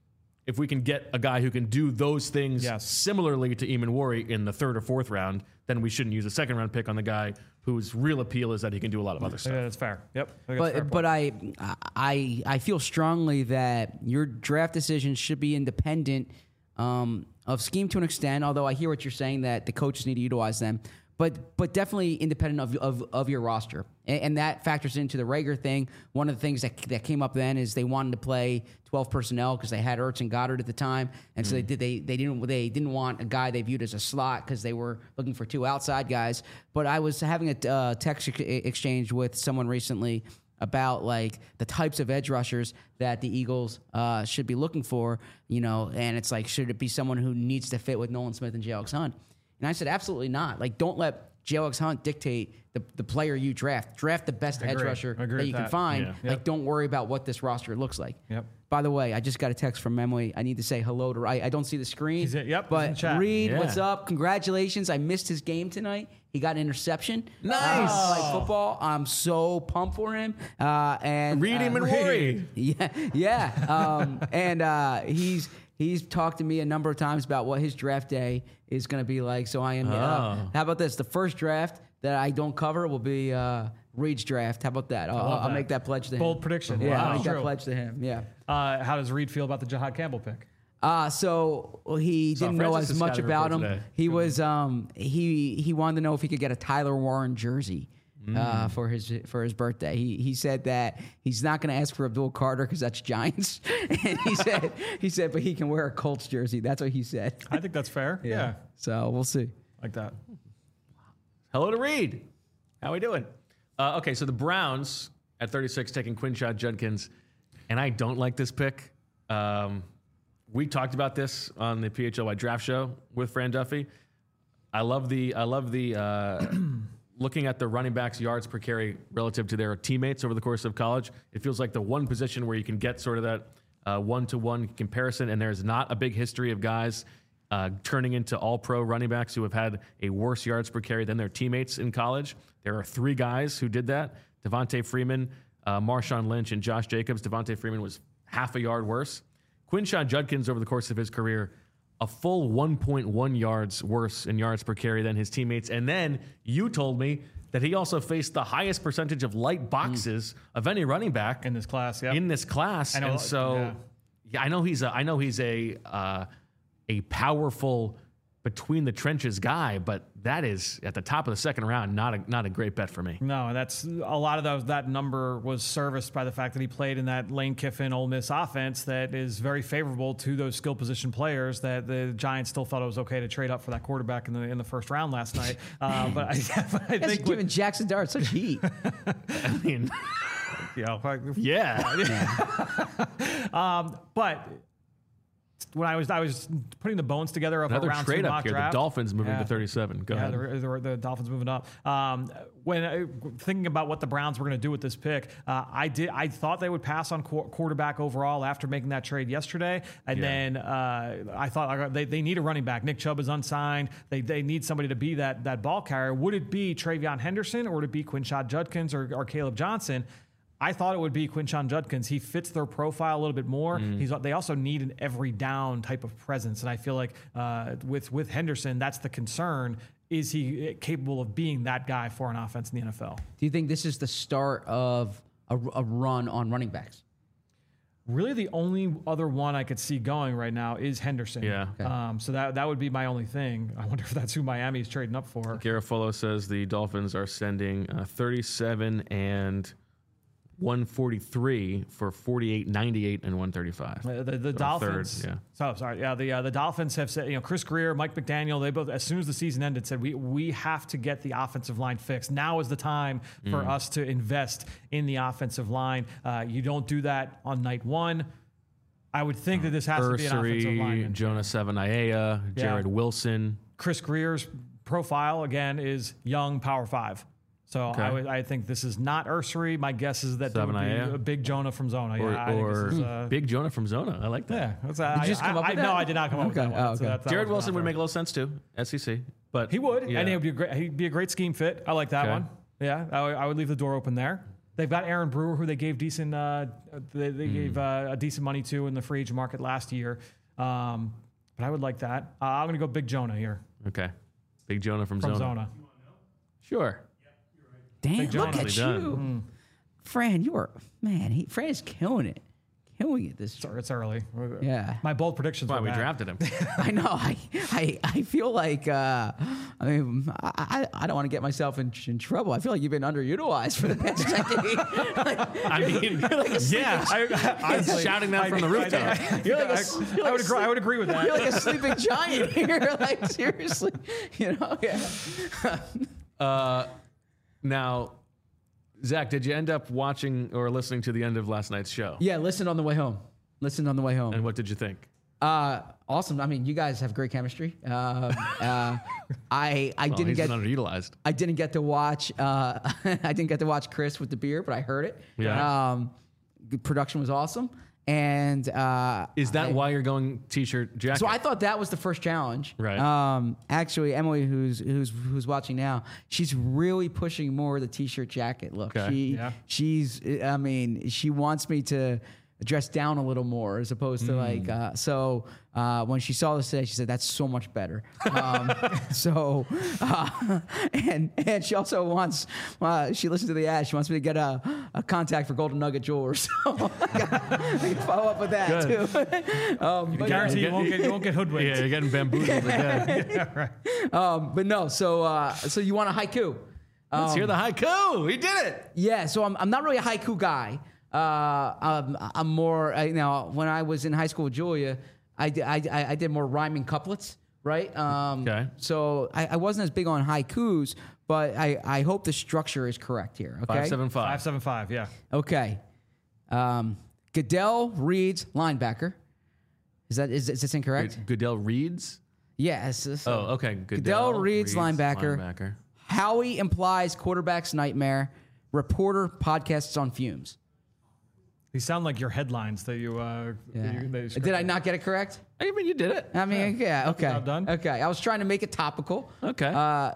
If we can get a guy who can do those things Yes. similarly to Imaniwari in the third or fourth round, then we shouldn't use a second round pick on the guy whose real appeal is that he can do a lot of other stuff. yeah, that's fair. Yep. I think that's a fair But point. but I I I feel strongly that your draft decisions should be independent um, of scheme to an extent. Although I hear what you're saying that the coaches need to utilize them, but but definitely independent of of, of your roster, and, and that factors into the Reagor thing. One of the things that that came up then is they wanted to play twelve personnel because they had Ertz and Goddard at the time, and so they did they they didn't they didn't want a guy they viewed as a slot because they were looking for two outside guys. But I was having a uh, text ex- exchange with someone recently about like the types of edge rushers that the Eagles uh, should be looking for, you know, and it's like, should it be someone who needs to fit with Nolan Smith and J Alex Hunt? And I said, absolutely not. Like, don't let J Alex Hunt dictate the, the player you draft. Draft the best edge Agree. rusher Agree that with you can that. find. Yeah. Like, Yep. don't worry about what this roster looks like. Yep. By the way, I just got a text from Memory. I need to say hello to. I, I don't see the screen. He's in- yep, he's But in chat. Reed, Yeah. what's up? Congratulations! I missed his game tonight. He got an interception. Nice. Uh, like football. I'm so pumped for him. Uh, and Reed uh, Imaniwari. yeah, yeah. Um, and uh, he's he's talked to me a number of times about what his draft day is going to be like. So I am. Uh, Oh. how about this? The first draft that I don't cover will be uh, Reed's draft. How about that? I'll, love I'll that. make that pledge to him. Bold prediction. Yeah, Wow. I'll make that True. pledge to him. Yeah. Uh, how does Reed feel about the Jahad Campbell pick? Uh, so well, he Saw didn't know Francis' as much scouting about him. report today. He was um, he he wanted to know if he could get a Tyler Warren jersey. Mm. Uh, for his for his birthday, he he said that he's not going to ask for Abdul Carter because that's Giants, and he said he said, but he can wear a Colts jersey. That's what he said. I think that's fair. Yeah. So we'll see. Like that. Hello to Reed. How we doing? Uh, okay, so the Browns at thirty-six taking Quinshad Judkins, and I don't like this pick. Um, we talked about this on the P H L Y draft show with Fran Duffy. I love the I love the uh, looking at the running backs' yards per carry relative to their teammates over the course of college. It feels like the one position where you can get sort of that uh, one-to-one comparison, and there's not a big history of guys uh, turning into all-pro running backs who have had a worse yards per carry than their teammates in college. There are three guys who did that: Devontae Freeman, uh, Marshawn Lynch, and Josh Jacobs. Devontae Freeman was half a yard worse. Quinshad Judkins, over the course of his career, a full one point one yards worse in yards per carry than his teammates. And then you told me that he also faced the highest percentage of light boxes of any running back In this class, yeah. in this class. I know, and so, yeah. yeah. I know he's a, I know he's a, uh, a powerful between the trenches guy, but that is at the top of the second round, not a, not a great bet for me. No, and that's a lot of those. That number was serviced by the fact that he played in that Lane Kiffin Ole Miss offense that is very favorable to those skill position players. That the Giants still thought it was okay to trade up for that quarterback in the in the first round last night. Uh, but I, but I That's think giving Jackson Dart such heat. I mean, you know, yeah. um, but when I was I was putting the bones together of Another a round trade two up mock here. draft. The Dolphins moving Yeah. to thirty-seven. Go Yeah, ahead. the, the, the Dolphins moving up. Um, when I, thinking about what the Browns were going to do with this pick, uh, I did. I thought they would pass on qu- quarterback overall after making that trade yesterday, and Yeah. then uh, I thought they, they need a running back. Nick Chubb is unsigned. They they need somebody to be that that ball carrier. Would it be Travion Henderson or would it be Quinshad Judkins or, or Caleb Johnson? I thought it would be Quinshad Judkins. He fits their profile a little bit more. Mm-hmm. He's they also need an every down type of presence, and I feel like uh, with with Henderson, that's the concern. is he capable of being that guy for an offense in the N F L? Do you think this is the start of a, a run on running backs? Really, the only other one I could see going right now is Henderson. Yeah. Okay. Um, so that that would be my only thing. I wonder if that's who Miami's trading up for. Garofalo says the Dolphins are sending uh, thirty-seven and one forty-three for forty-eight, ninety-eight, and one thirty-five. Uh, the the So Dolphins. third, yeah. So sorry. Yeah. The uh, the Dolphins have said, you know, Chris Greer, Mike McDaniel, they both, as soon as the season ended, said we we have to get the offensive line fixed. Now is the time for Mm. us to invest in the offensive line. Uh, you don't do that on night one. I would think that this has to be an offensive Ursary, lineman. Jonah Savanaia, Jared Wilson. Chris Greer's profile again is young power five. So Okay. I, would, I think this is not Ursary. My guess is that there would be Savanaia? a big Jonah from Zona. Or, yeah, I think or this is, uh, Big Jonah from Zona. I like that. yeah. That's, uh, Did I, you just come I, up with I, that? No, I did not come up Okay. with that one. Oh, So okay. that's- that Jared was Wilson out would there. make a little sense too. S E C, but He would, Yeah. and he would be a great. He'd be a great scheme fit. I like that Okay. one. Yeah, I, would- I would leave the door open there. They've got Aaron Brewer, who they gave decent. Uh, they they Hmm. gave uh, a decent money to in the free agent market last year. Um, but I would like that. Uh, I'm going to go Big Jonah here Okay. Big Jonah from, from Zona. Zona. Sure. Damn, Big look John. at Done. you. Fran, you are, man, he, Fran is killing it. Killing it this Sorry, it's early. Yeah. My bold predictions. Why were we bad. drafted him? I know. I, I, I feel like, uh, I mean, I, I, I don't want to get myself in, in trouble. I feel like you've been underutilized for the past decade. Like, I mean, yeah. I, I, He's shouting that from the rooftop. You're like a- I, you're I like would a agree. I would agree with that. you're like a sleeping giant here. Like, seriously. You know? Yeah. Uh, now, Zach, did you end up watching or listening to the end of last night's show? Yeah, listen on the way home. Listen on the way home. And what did you think? Uh, awesome. I mean, you guys have great chemistry. Um, uh, I I Well, didn't he's get underutilized. I didn't get to watch uh, I didn't get to watch Chris with the beer, but I heard it. Yeah. Um, the production was awesome, and uh, Is that I- why you're going t-shirt jacket? So I thought that was the first challenge. Right. Um, actually, Emily, who's who's who's watching now, she's really pushing more of the t-shirt jacket look. Okay. She Yeah. she's I mean, she wants me to dress down a little more as opposed to like uh, so uh, when she saw this today, she said that's so much better. Um, so uh, and and she also wants uh, she listened to the ad. She wants me to get a, a contact for Golden Nugget Jewelers. So I can follow up with that too. um, but, Guarantee you won't get you won't get hoodwinked. Yeah, you're getting bamboozled again. yeah, right. um, but no, so uh, so you want a haiku? Let's Um, hear the haiku. He did it. Yeah, so I'm, I'm not really a haiku guy. Uh, um, I'm more, I, you know, when I was in high school with Julia, I, di- I, I I did more rhyming couplets, right? Um, Okay. So I, I wasn't as big on haikus, but I, I hope the structure is correct here. Okay. Five seven Five five. seven five. Yeah. Okay. Um, Goodell Reed's linebacker. Is that is, is this incorrect? Goodell Reeds. Yes. Yeah, Oh, okay. Goodell Reed's linebacker. linebacker. Howie implies quarterback's nightmare. Reporter podcasts on fumes. These sound like your headlines that you. Uh, Yeah. that you, that you Did I not get it correct? I mean, you did it. I mean, yeah, okay. job done. Okay, I was trying to make it topical. Okay. Uh,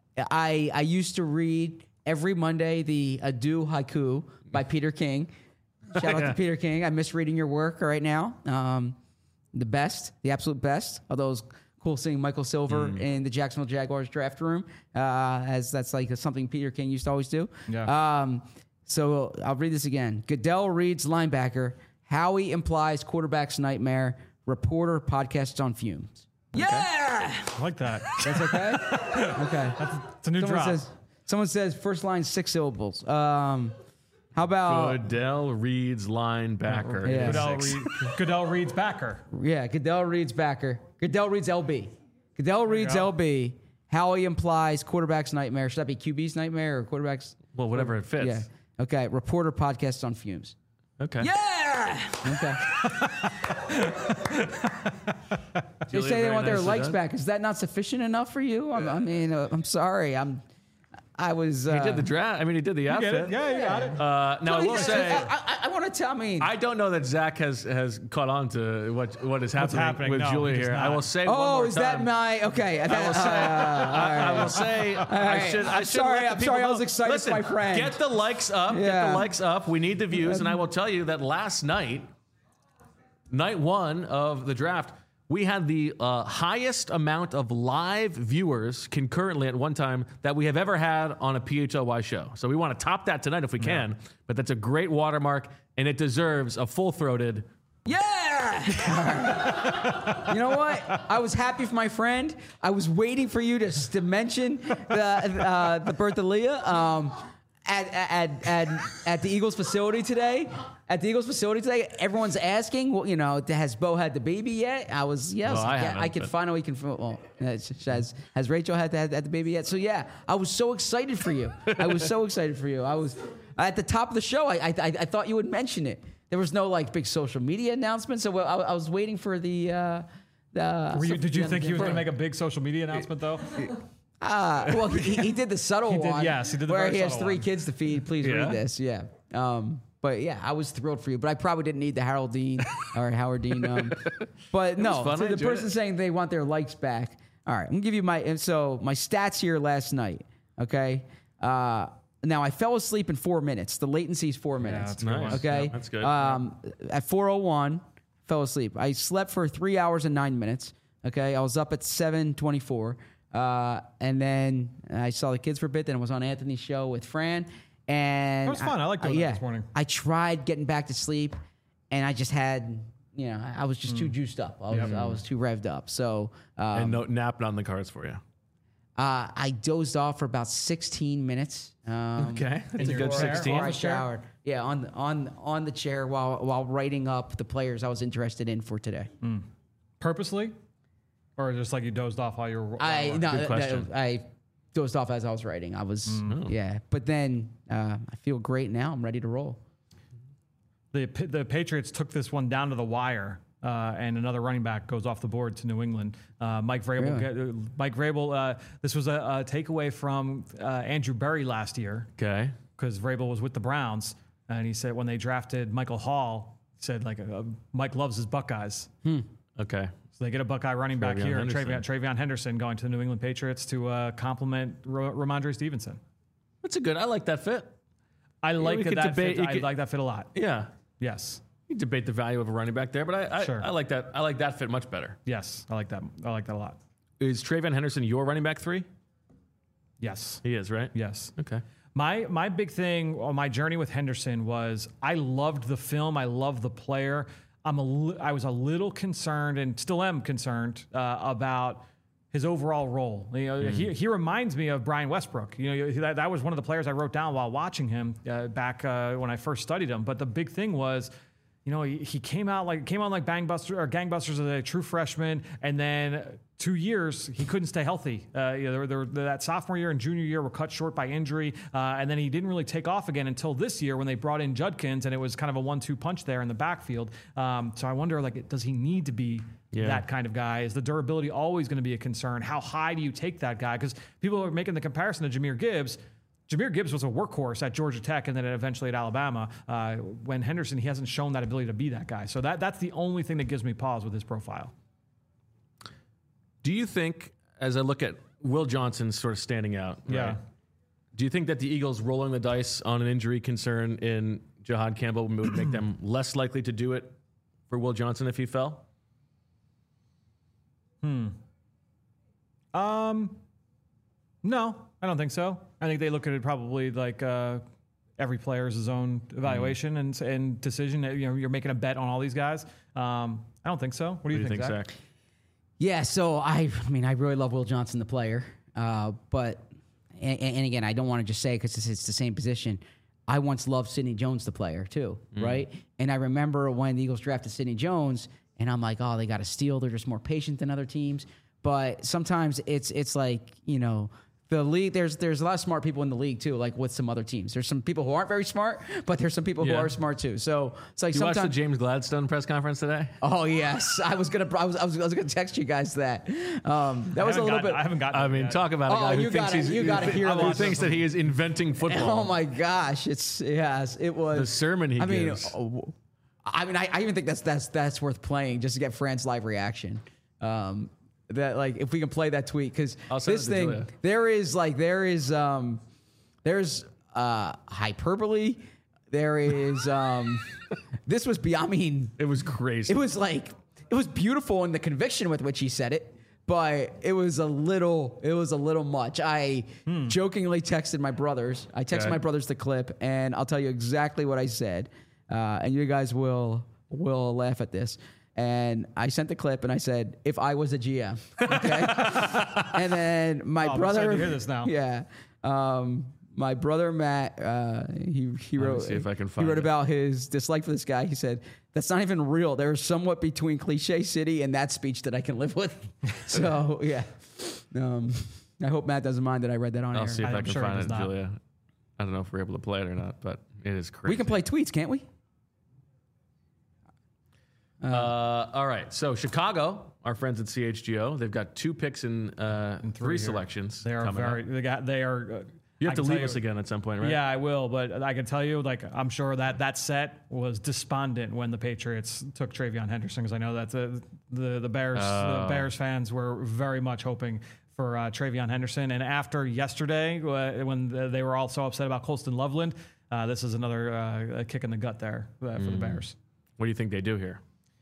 I I used to read every Monday the Adieu Haiku by Peter King. Shout out to Peter King. I miss reading your work right now. Um, the best, the absolute best. Although it's cool seeing Michael Silver in the Jacksonville Jaguars draft room, uh, as that's like something Peter King used to always do. Yeah. Um, so I'll read this again. Goodell reads linebacker. Howie implies quarterback's nightmare. Reporter podcasts on fumes. Yeah. I like that. That's okay? Okay. It's a new Someone drop. says, someone says first line six syllables. Um, how about Goodell Reeds linebacker. Yeah. Goodell, Six. Reed, Goodell reads backer. yeah? Goodell reads backer. Goodell reads L B. Goodell reads go. L B. Howie implies quarterback's nightmare. Should that be Q B's nightmare or quarterback's? Well, whatever it fits. Yeah. Okay. Reporter podcasts on fumes. Okay. Yeah. Okay. They Julia, say they very want their nicely likes done. back. Is that not sufficient enough for you? I'm, I mean, uh, I'm sorry. I'm. I was. Uh, He did the draft. I mean, he did the Get outfit. it? Yeah, you got it. Uh, now, I will I, say, I, I, I want to tell me. I don't know that Zach has, has caught on to what what is happening, happening. with No, Julia he does here. I not. will say one oh, more is time. that my okay? I will say, I, I will say, I right. should. I I'm should sorry, let the I'm people sorry, I know. was excited for Listen, my friend. Get the likes up. Get Yeah. the likes up. We need the views, and I will tell you that last night, night one of the draft, we had the uh, highest amount of live viewers concurrently at one time that we have ever had on a P H L Y show. So we want to top that tonight if we can. Yeah. But that's a great watermark, and it deserves a full-throated. Yeah! You know what? I was happy for my friend. I was waiting for you to, to mention the uh, the birth of Leah um, at, at at at the Eagles facility today. At the Eagles facility today, everyone's asking, well, you know, has Bo had the baby yet? I was, yes, well, I, yeah, I can finally confirm. Well, has has Rachel had the, had the baby yet? So yeah, I was so excited for you. I was so excited for you. I was at the top of the show. I I, I thought you would mention it. There was no like big social media announcement, so I, I was waiting for the. Uh, the Were you, did you think the, he was going to make a big social media announcement though? Uh, well, he, he did the subtle he did, one. Yes, he did the where very he has subtle three one. kids to feed. Please Yeah. read this. Yeah. Um, but yeah, I was thrilled for you. But I probably didn't need the Harold Dean or Howard Dean. Um, but no, fun. to I the enjoyed person it. saying they want their likes back. All right, I'm gonna give you my and so my stats here last night. Okay. Uh, now I fell asleep in four minutes. The latency is four minutes. that's a good Nice. one. Okay. Yeah, that's good. Um, at four oh one, fell asleep. I slept for three hours and nine minutes. Okay. I was up at seven twenty-four. Uh, and then I saw the kids for a bit. Then I was on Anthony's show with Fran. And That was fun. I liked doing that yeah, this morning. I tried getting back to sleep, and I just had, you know, I was just too juiced up. I was, Yep. I was too revved up. So um, And no nap on the cards for you. uh, I dozed off for about sixteen minutes. Um, Okay. That's a your good chair? sixteen. Before I On the chair? showered. Yeah, on the, on on the chair while while writing up the players I was interested in for today. Purposely, or just like you dozed off while you were? I while- no, Good that- question. I dozed off as I was writing. I was yeah, but then uh, I feel great now. I'm ready to roll. the the Patriots took this one down to the wire, uh, and another running back goes off the board to New England. Uh, Mike Vrabel. Really? Get, uh, Mike Vrabel. Uh, this was a, a takeaway from uh, Andrew Berry last year Okay. because Vrabel was with the Browns, and he said when they drafted Michael Hall, he said like uh, Mike loves his Buckeyes. Okay. So they get a Buckeye running back Travion here, Henderson. Travion, Travion Henderson going to the New England Patriots to uh, complement Ro- Ramondre Stevenson. That's a good. I like that fit. I like we that, could that debate- fit. you I could- like that fit a lot. Yeah. Yes. You can debate the value of a running back there, but I I, Sure. I like that. I like that fit much better. Yes. I like that. I like that a lot. Is Travion Henderson your running back three? Yes. He is, right? Yes. Okay. My my big thing on my journey with Henderson was I loved the film. I loved the player. I'm a li- I was a little concerned and still am concerned uh, about his overall role. You know, he, he reminds me of Brian Westbrook. You know, that, that was one of the players I wrote down while watching him uh, back uh, when I first studied him. But the big thing was, you know, he, he came out like came on like Bangbuster or Gangbusters as a true freshman, and then two years he couldn't stay healthy. Uh, you know, there, there, that sophomore year and junior year were cut short by injury, uh, and then he didn't really take off again until this year when they brought in Judkins, and it was kind of a one-two punch there in the backfield. Um, so I wonder, like, does he need to be Yeah. that kind of guy? Is the durability always going to be a concern? How high do you take that guy? Because people are making the comparison to Jahmyr Gibbs. Jahmyr Gibbs was a workhorse at Georgia Tech and then eventually at Alabama. Uh, when Henderson, he hasn't shown that ability to be that guy. So that that's the only thing that gives me pause with his profile. Do you think, as I look at Will Johnson sort of standing out, Yeah. right, do you think that the Eagles rolling the dice on an injury concern in Jahad Campbell would make them less likely to do it for Will Johnson if he fell? Um, no, I don't think so. I think they look at it probably like uh, every player is his own evaluation and and decision. You know, you're making a bet on all these guys. Um, I don't think so. What do you, What do you think, Zach? Zach? Yeah, so I, I mean, I really love Will Johnson, the player, uh, but and, and again, I don't want to just say because it's, it's the same position. I once loved Sidney Jones, the player, too, right? And I remember when the Eagles drafted Sidney Jones, and I'm like, oh, they got to steal. They're just more patient than other teams. But sometimes it's it's like, you know, the league, there's there's a lot of smart people in the league, too, like with some other teams. There's some people who aren't very smart, but there's some people who Yeah. are smart, too. So it's like You watched the sometimes. James Gladstone press conference today? Oh, yes. I was going to I was, I was, I was gonna text you guys that. Um, that I was a haven't little gotten- bit. I haven't gotten. I it mean, yet. talk about a Oh, guy who you thinks gotta- he's you gotta who hear who this. thinks that he is inventing football. Oh my gosh! It's yes, it was The sermon he I mean, gives. oh, I mean, I, I even think that's that's that's worth playing just to get Fran's live reaction. Um, that like if we can play that tweet because I'll send this it to thing Julia. there is like there is um there's uh hyperbole. There is um this was beyond. I mean, It was crazy. it was like it was beautiful in the conviction with which he said it, but it was a little, it was a little much. I hmm. jokingly texted my brothers. I texted okay. my brothers the clip, and I'll tell you exactly what I said, uh, and you guys will will laugh at this. And I sent the clip, and I said, "If I was a G M," okay. And then my oh, brother, I'm excited to hear this now. Yeah. Um, My brother Matt, uh, he he wrote. See if I can find he wrote it. about his dislike for this guy. He said that's not even real. There's somewhat between cliche city and that speech that I can live with. So yeah, um, I hope Matt doesn't mind that I read that on I'll air. see if I'm I can sure find it it, does not. Julia. I don't know if we're able to play it or not, but it is crazy. We can play tweets, can't we? Uh, all right. So Chicago, our friends at C H G O, they've got two picks in, uh, in three, three selections. They are very. Up. They got. They are. Uh, You have I to can leave tell us you, again at some point, right? Yeah, I will. But I can tell you, like, I'm sure that that set was despondent when the Patriots took Travion Henderson, because I know that the the, the Bears Oh. the Bears fans were very much hoping for uh, Travion Henderson. And after yesterday, uh, when they were all so upset about Colston Loveland, uh, this is another uh, kick in the gut there uh, for Mm. the Bears. What do you think they do here?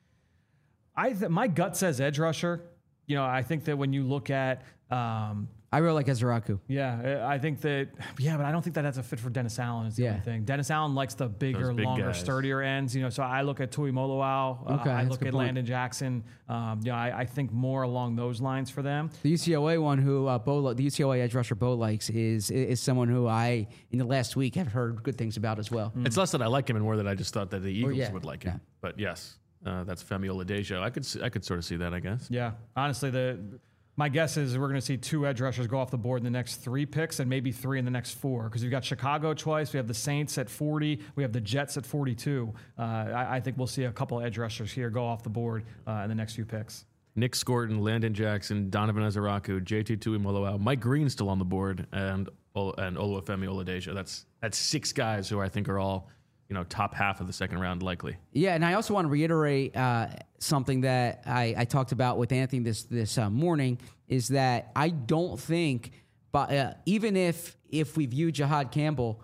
I th- my gut says edge rusher. You know, I think that when you look at um, I really like Ezraku. Yeah, I think that, yeah, but I don't think that that's a fit for Dennis Allen is the Yeah. only thing. Dennis Allen likes the bigger, big longer, guys. sturdier ends. You know, so I look at Tui Moloau. Uh, Okay, I that's a look good at point. Landon Jackson. Um, you know, I, I think more along those lines for them. The U C L A one, who uh, Bo, the U C L A edge rusher Bo likes, is is someone who I in the last week have heard good things about as well. It's less that I like him and more that I just thought that the Eagles yeah, would like him. yeah. But yes, uh, that's Femi Oladejo. I could see, I could sort of see that, I guess. Yeah, honestly, the my guess is we're going to see two edge rushers go off the board in the next three picks, and maybe three in the next four, because we've got Chicago twice, we have the Saints at forty, we have the Jets at forty-two. Uh, I, I think we'll see a couple edge rushers here go off the board uh, in the next few picks. Nick Scorton, Landon Jackson, Donovan Ezeraku, J T Tuimoloau, Mike Green's still on the board, and and Oluwafemi Oladejo. That's that's six guys who I think are all, you know, top half of the second round likely. Yeah, and I also want to reiterate uh, something that I, I talked about with Anthony this this uh, morning, is that I don't think, but uh, even if if we view Jihad Campbell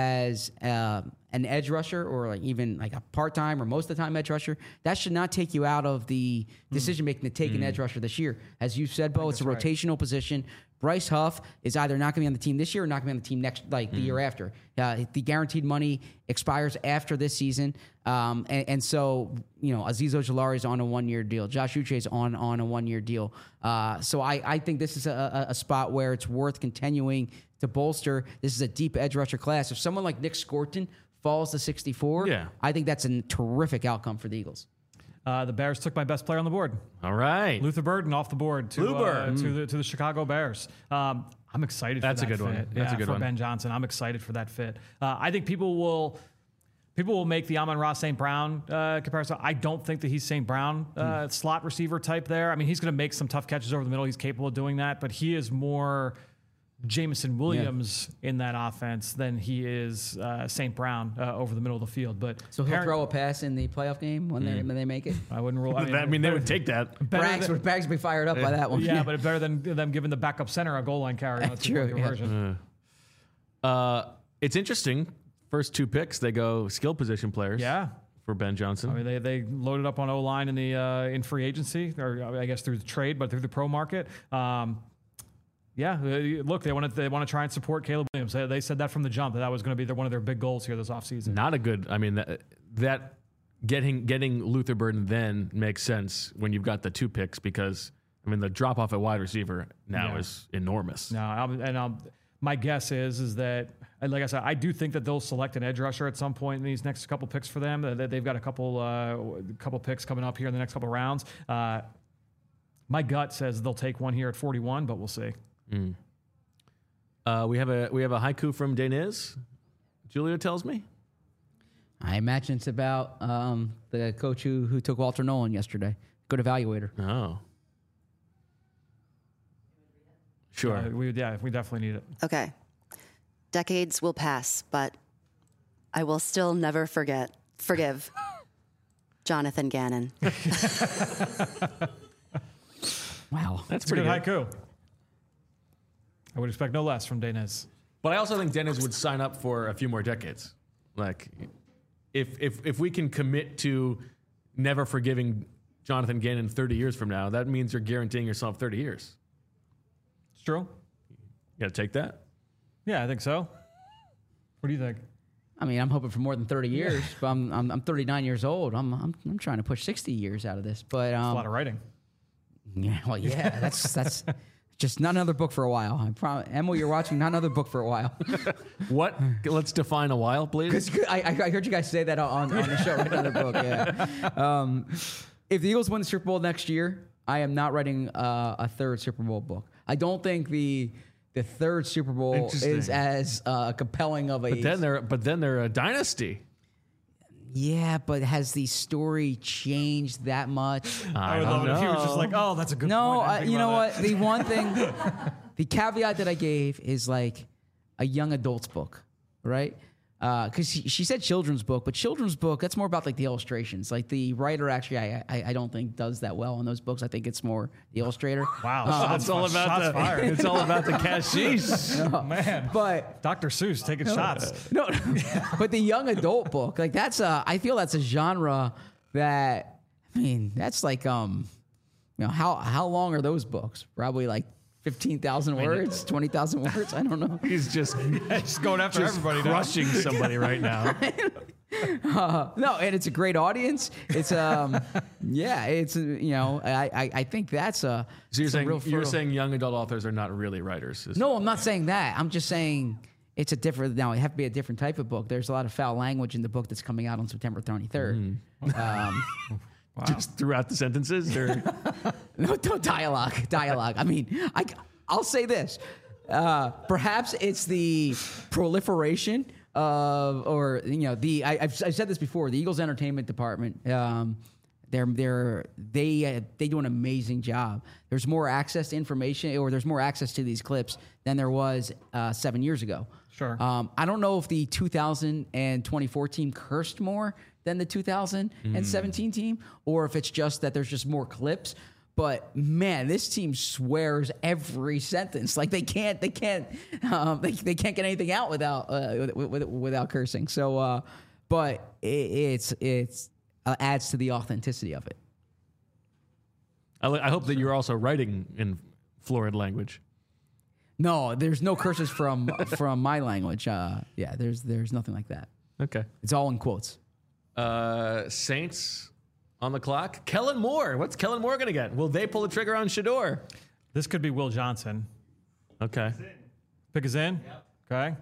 as uh, an edge rusher, or like even like a part time or most of the time edge rusher, that should not take you out of the decision making to take mm. an edge rusher this year. As you said, Bo, it's a rotational right. position. Bryce Huff is either not going to be on the team this year or not going to be on the team next, like the mm. year after. Uh, the guaranteed money expires after this season, um, and, and so you know Azeez Ojulari is on a one-year deal. Josh Uche is on on a one-year deal. Uh, so I, I think this is a, a, a spot where it's worth continuing to bolster. This is a deep edge rusher class. If someone like Nick Scorton falls to sixty-four, yeah. I think that's a terrific outcome for the Eagles. Uh, the Bears took my best player on the board. All right. Luther Burden off the board to, uh, mm. to, the, to the Chicago Bears. Um, I'm excited That's for that a good fit. one. That's yeah, a good for one. Ben Johnson. I'm excited for that fit. Uh, I think people will people will make the Amon-Ra Saint Brown uh, comparison. I don't think that he's Saint Brown uh, mm. slot receiver type there. I mean, he's going to make some tough catches over the middle. He's capable of doing that, but he is more Jameson Williams yeah. in that offense than he is uh, Saint Brown uh, over the middle of the field. But so he'll throw a pass in the playoff game when mm. they when they make it. I wouldn't rule. I mean, I mean they would take that. Braggs would Braggs would be fired up yeah. by that one. Yeah, but it's better than them giving the backup center a goal line carry. That's true. Yeah. Uh, uh, it's interesting. First two picks, they go skill position players. Yeah. For Ben Johnson. I mean, they they loaded up on O line in the uh, in free agency, or I guess through the trade, but through the pro market. Um, Yeah, look, they want to they want to try and support Caleb Williams. They, they said that from the jump, that that was going to be their, one of their big goals here this offseason. Not a good. I mean, that, that getting getting Luther Burden then makes sense when you've got the two picks, because I mean the drop off at wide receiver now yeah. is enormous. No, I'm, and I'm, my guess is is that, like I said, I do think that they'll select an edge rusher at some point in these next couple picks for them. They've got a couple uh, couple picks coming up here in the next couple rounds. Uh, my gut says they'll take one here at forty-one, but we'll see. Mm. Uh, we have a we have a haiku from Deniz. Julia tells me. I imagine it's about um, the coach who who took Walter Nolan yesterday. Good evaluator. Oh, sure. Yeah, we yeah we definitely need it. Okay, decades will pass, but I will still never forget forgive Jonathan Gannon. Wow, that's It's pretty good good. haiku. I would expect no less from Deniz. But I also think Deniz would sign up for a few more decades. Like, if if if we can commit to never forgiving Jonathan Gannon thirty years from now, that means you're guaranteeing yourself thirty years. It's true. You got to take that. Yeah, I think so. What do you think? I mean, I'm hoping for more than thirty years, but I'm, I'm I'm thirty-nine years old. I'm I'm I'm trying to push sixty years out of this. But um, It's a lot of writing. Yeah, well, yeah, that's that's just not another book for a while. I promise, Emil, you're watching not another book for a while. What? Let's define a while, please. Because I, I heard you guys say that on, on the show. Write another book. Yeah. Um, if the Eagles win the Super Bowl next year, I am not writing uh, a third Super Bowl book. I don't think the the third Super Bowl is as uh, compelling of a. But then they're but then they're a dynasty. Yeah, but has the story changed that much? I, I would don't love it know. if he was just like, oh, that's a good No, point. I uh, didn't think you know about what? The one thing, the caveat that I gave is like a young adult's book, right? Because she, she said children's book, but children's book, that's more about like the illustrations. Like the writer actually, I, I I don't think does that well in those books. I think it's more the illustrator. Wow, Uh, shots, It's all about shots the. fired. It's all about the cashish. Oh, man. But Doctor Seuss taking shots. no, but the young adult book, like that's a, I feel that's a genre that, I mean, that's like, um, you know, how how long are those books? Probably like fifteen thousand words, twenty thousand words. I don't know. He's just Just going after just everybody now. crushing somebody right now. Uh, no, and it's a great audience. It's um, yeah, it's uh, you know, I, I I think that's a. So you're it's a saying real you're fertile- saying young adult authors are not really writers? Is- No, I'm not saying that. I'm just saying it's a different. Now it have to be a different type of book. There's a lot of foul language in the book that's coming out on September twenty-third. Mm-hmm. Um, just throughout the sentences, or no, no dialogue, dialogue. I mean, I I'll say this. Uh, perhaps it's the proliferation of, or you know, the I, I've, I've said this before. The Eagles entertainment department, um, they're they're they uh, they do an amazing job. There's more access to information, or there's more access to these clips than there was uh, seven years ago. Sure. Um, I don't know if the two thousand twenty-four team cursed more than the two thousand seventeen team, or if it's just that there's just more clips. But man, this team swears every sentence. Like they can't, they can't, um, they, they can't get anything out without uh, with, with, without cursing. So, uh, but it, it's it's uh, adds to the authenticity of it. I, li- I hope that you're also writing in florid language. No, there's no curses from from my language. Uh, yeah, there's there's nothing like that. Okay. It's all in quotes. Uh, Saints on the clock. Kellen Moore. What's Kellen Moore going to get? Will they pull the trigger on Shador? This could be Will Johnson. Okay. Pick is in? Yep. Okay.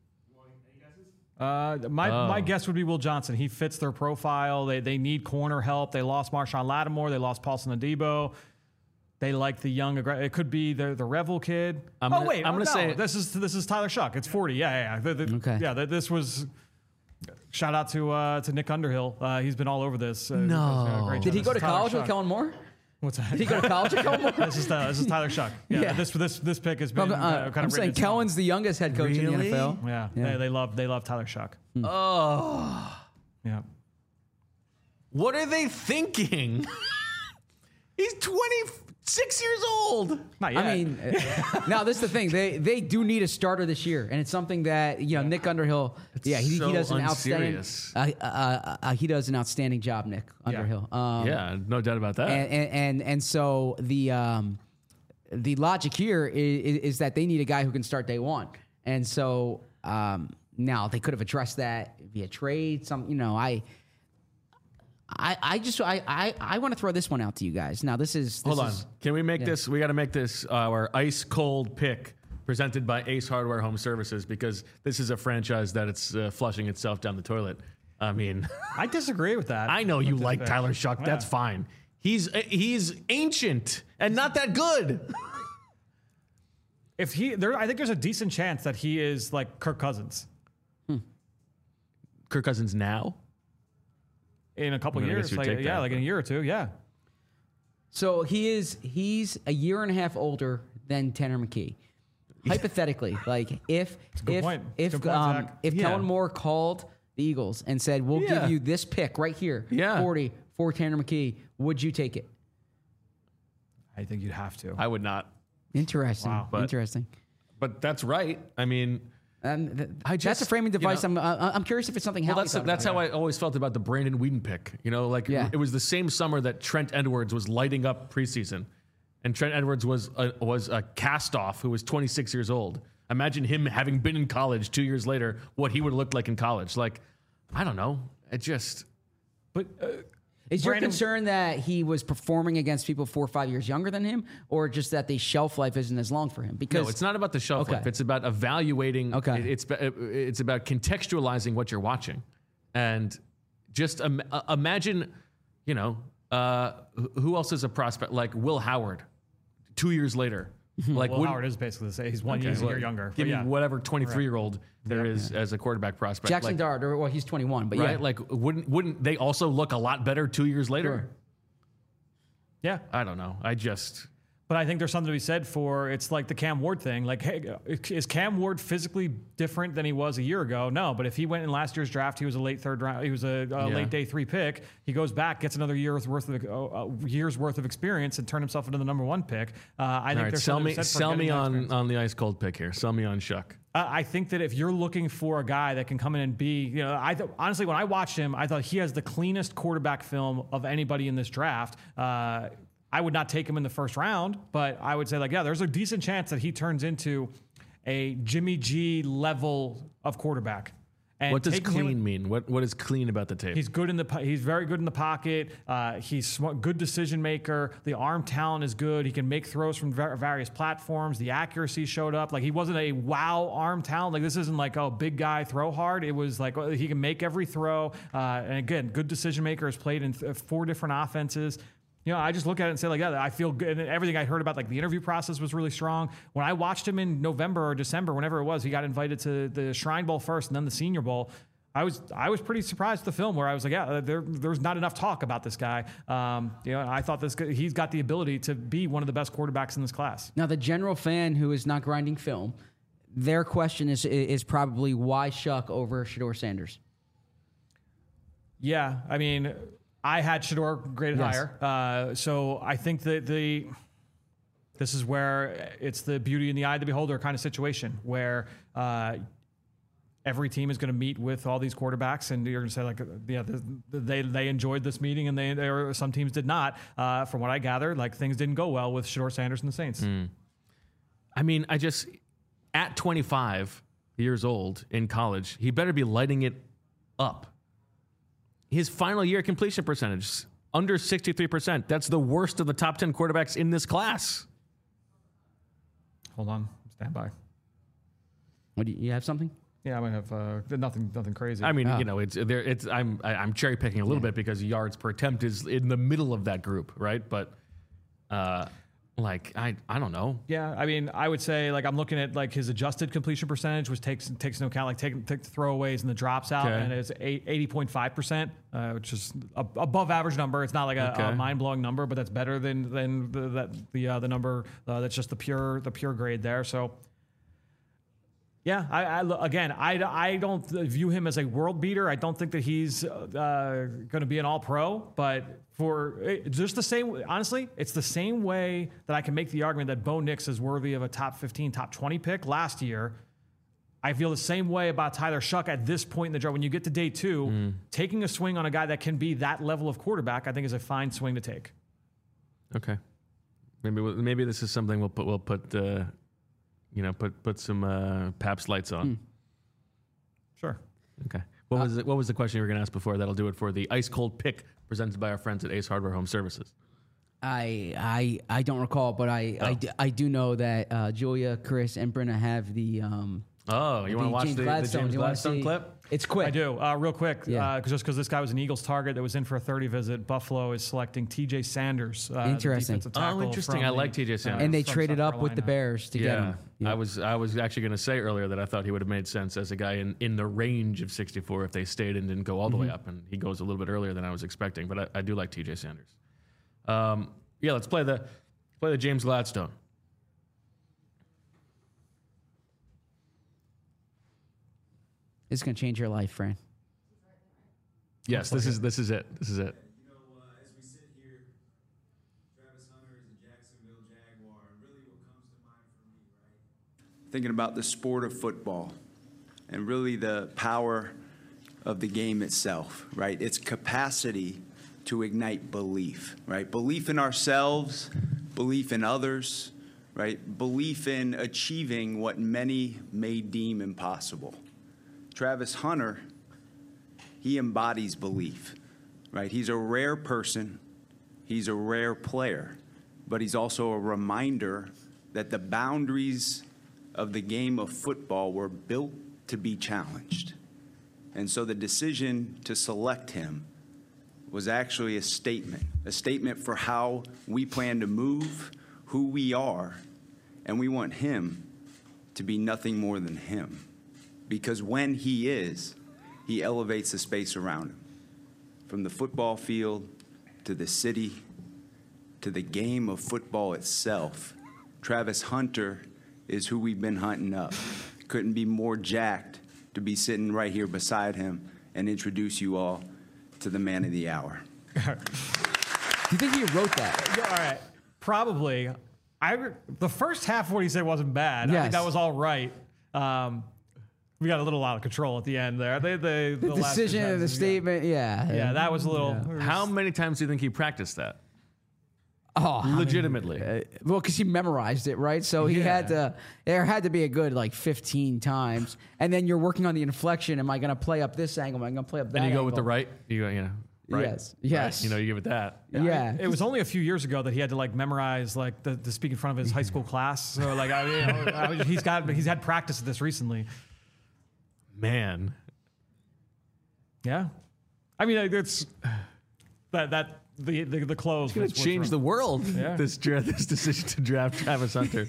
Uh, my Oh. my guess would be Will Johnson. He fits their profile. They they need corner help. They lost Marshawn Lattimore. They lost Paulson Adebo. They like the young. Aggra- it could be the the Revel kid. I'm oh gonna- wait, I'm oh, gonna no. say- this is this is Tyler Shuck. It's forty. Yeah, yeah. yeah. The- the- Okay. Yeah, the, this was. Shout out to uh, to Nick Underhill. Uh, he's been all over this. Uh, No. uh, great Did job. he go This to is Tyler college with Shuck. Kellen Moore? What's that? Did he go to college with Kellen Moore? This is uh, this is Tyler Shuck. Yeah, Yeah. This this this pick has been Uh, uh, kind I'm of saying written Kellen's the youngest head coach in the Really? N F L. Yeah, Yeah. They, they love they love Tyler Shuck. Oh, Yeah. what are they thinking? He's twenty-six years old. Not yet. I mean, uh, now this is the thing. They they do need a starter this year, and it's something that you know Nick Underhill. yeah, he, so he does an outstanding. unserious. Uh, uh, uh, uh, he does an outstanding job, Nick Underhill. Um, Yeah, no doubt about that. and, and and and so the um, the logic here is, is that they need a guy who can start day one, and so um, now they could have addressed that via trade. Some, you know, I. I, I just I, I, I want to throw this one out to you guys. Now this is this Hold on. is- Can we make this? We got to make this our ice cold pick presented by Ace Hardware Home Services, because this is a franchise that it's uh, flushing itself down the toilet. I mean, I disagree with that. I know you With this like pick. Tyler Shuck. That's Yeah. fine. He's uh, he's ancient and not that good. If he, there, I think there's a decent chance that he is like Kirk Cousins Kirk Cousins now. in a couple I guess years. you'd Like, take yeah, that, like in but- a year or two. Yeah. So he is he's a year and a half older than Tanner McKee. Hypothetically, like if good if point. if Good point, um, Zach. if Yeah. Kellen Moore called the Eagles and said, "We'll Yeah. give you this pick right here, Yeah. forty for Tanner McKee," would you take it? I think you'd have to. I would not. Interesting. Wow. But- Interesting. But that's right. I mean, Um, th- I just, that's a framing device. you know, I'm uh, I'm curious if it's something. Well, Howie that's thought that's about. how I always felt about the Brandon Whedon pick. You know, like Yeah. it was the same summer that Trent Edwards was lighting up preseason, and Trent Edwards was a, was a cast-off who was twenty-six years old. Imagine him having been in college two years later, what he would have looked like in college. Like, I don't know. It just, But uh, Is your Brandon- concern that he was performing against people four or five years younger than him, or just that the shelf life isn't as long for him? Because no, it's not about the shelf Okay. life. It's about evaluating. Okay. it- It's it's about contextualizing what you're watching, and just im- uh, imagine, you know, uh, wh- who else is a prospect like Will Howard, two years later. Like Will wouldn't- Howard is basically the same. He's one Okay, year well, younger. Give but yeah. me whatever twenty-three year old there is as a quarterback prospect. Jackson like, Dart, or well, he's twenty-one, but right? yeah, Like, wouldn't wouldn't they also look a lot better two years later? Sure. Yeah. I don't know. I just But I think there's something to be said for it's like the Cam Ward thing. Like, hey, is Cam Ward physically different than he was a year ago? No, but if he went in last year's draft, he was a late third round. He was a, a Yeah. late day three pick. He goes back, gets another year's worth of uh, years worth of experience, and turned himself into the number one pick. Uh, I all think right. there's Sell something me to be said for sell getting me that on experience. on the ice cold pick here. Sell me on Shuck. Uh, I think that if you're looking for a guy that can come in and be, you know, I th- honestly, when I watched him, I thought he has the cleanest quarterback film of anybody in this draft. Uh, I would not take him in the first round, but I would say, like, yeah, there's a decent chance that he turns into a Jimmy G level of quarterback. And What does taking him- clean mean? What what is clean about the tape? He's good in the. po- He's very good in the pocket. Uh, he's smart, good decision maker. The arm talent is good. He can make throws from var- various platforms. The accuracy showed up. Like he wasn't a wow arm talent. Like this isn't like oh big guy throw hard. It was like oh, he can make every throw. Uh, and again, good decision maker. Has played in th- four different offenses. You know, I just look at it and say, like, yeah, I feel good. And everything I heard about, like, the interview process was really strong. When I watched him in November or December, whenever it was, he got invited to the Shrine Bowl first and then the Senior Bowl. I was I was pretty surprised at the film where I was like, yeah, there, there's not enough talk about this guy. Um, you know, I thought this guy, he's got the ability to be one of the best quarterbacks in this class. Now, the general fan who is not grinding film, their question is is probably why Shuck over Shedeur Sanders? Yeah, I mean, I had Shedeur graded Yes. higher. Uh, so I think that the this is where it's the beauty in the eye of the beholder kind of situation where uh, every team is going to meet with all these quarterbacks, and you're going to say like, yeah, the, the, they they enjoyed this meeting, and they, they were, some teams did not. Uh, from what I gathered, like things didn't go well with Shedeur Sanders and the Saints. I mean, I just at twenty-five years old in college, he better be lighting it up. His final year completion percentage under sixty-three percent. That's the worst of the top ten quarterbacks in this class. Hold on, stand by. What do you, you have something? Yeah, I might have uh, nothing nothing crazy. I mean, Ah. you know, it's there. It's I'm I, I'm cherry picking a little Yeah. bit because yards per attempt is in the middle of that group, right? But uh, like I I don't know. Yeah, I mean, I would say like I'm looking at like his adjusted completion percentage, which takes takes into account like take, take the throwaways and the drops out, Okay. and it's eighty point five percent, uh, which is a, above average number. It's not like a, Okay. a mind blowing number, but that's better than than the that the uh, the number uh, that's just the pure the pure grade there. So. Yeah, I, I lo- again, I, I don't view him as a world beater. I don't think that he's uh, going to be an all pro, but for it, just the same, honestly, it's the same way that I can make the argument that Bo Nix is worthy of a top fifteen, top twenty pick last year. I feel the same way about Tyler Shuck at this point in the draft. When you get to day two, taking a swing on a guy that can be that level of quarterback, I think is a fine swing to take. Okay, maybe we'll- maybe this is something we'll put we'll put uh, you know put put some uh, Pabst lights on. Sure. Okay. What was it, what was the question you were going to ask before? That'll do it for the ice cold pick presented by our friends at Ace Hardware Home Services. I I I don't recall, but I I, Oh. d- I do know that uh, Julia, Chris, and Brenna have the um. Oh, you want to watch James the, the Gladstone. James You wanna Gladstone see- clip? It's quick. I do. Uh, real quick, Yeah. uh, 'cause just because this guy was an Eagles target that was in for a thirty visit, Buffalo is selecting T J Sanders. Uh, the Interesting. defensive Oh, tackle interesting. from I the, like T J Sanders. And they from traded South up with the Carolina. Bears to get him. I was I was actually going to say earlier that I thought he would have made sense as a guy in, in the range of sixty-four if they stayed and didn't go all the way up, and he goes a little bit earlier than I was expecting. But I, I do like T J Sanders. Um, yeah, let's play the play the James Gladstone. It's gonna change your life, Fran. Yes, this is this is it. This is it. You know, uh, as we sit here, Travis Hunter is a Jacksonville Jaguar. And really what comes to mind for me, right? Thinking about the sport of football. and really the power of the game itself, right? Its capacity to ignite belief, right? Belief in ourselves, belief in others, right? Belief in achieving what many may deem impossible. Travis Hunter, he embodies belief, right? He's a rare person, he's a rare player, but he's also a reminder that the boundaries of the game of football were built to be challenged. And so the decision to select him was actually a statement, a statement for how we plan to move, who we are, and we want him to be nothing more than him. Because when he is, he elevates the space around him. From the football field to the city to the game of football itself, Travis Hunter is who we've been hunting up. Couldn't be more jacked to be sitting right here beside him and introduce you all to the man of the hour. Do you think he wrote that? All right. Probably. I, the first half of what he said wasn't bad. Yes. I think that was all right. Um, we got a little out of control at the end there. They, they, The, the last two decision and the sentences, statement, yeah. Yeah, that was a little. Yeah. How many times do you think he practiced that? Oh, Legitimately. Uh, well, because he memorized it, right? So he Yeah. had to. There had to be a good like fifteen times, and then you're working on the inflection. Am I going to play up this angle? Am I going to play up that? Then you go with the angle? right. You go, you know, right. Yes. Yes. Right. You know, you give it that. Yeah. It was only a few years ago that he had to like memorize like the, to speak in front of his high school class. So like I, you know, I was- he's got he's had practice of this recently. Man. Yeah, I mean it's that that the the, the close It's going was- to was change wrong. the world, Yeah. this, dra- this decision to draft Travis Hunter.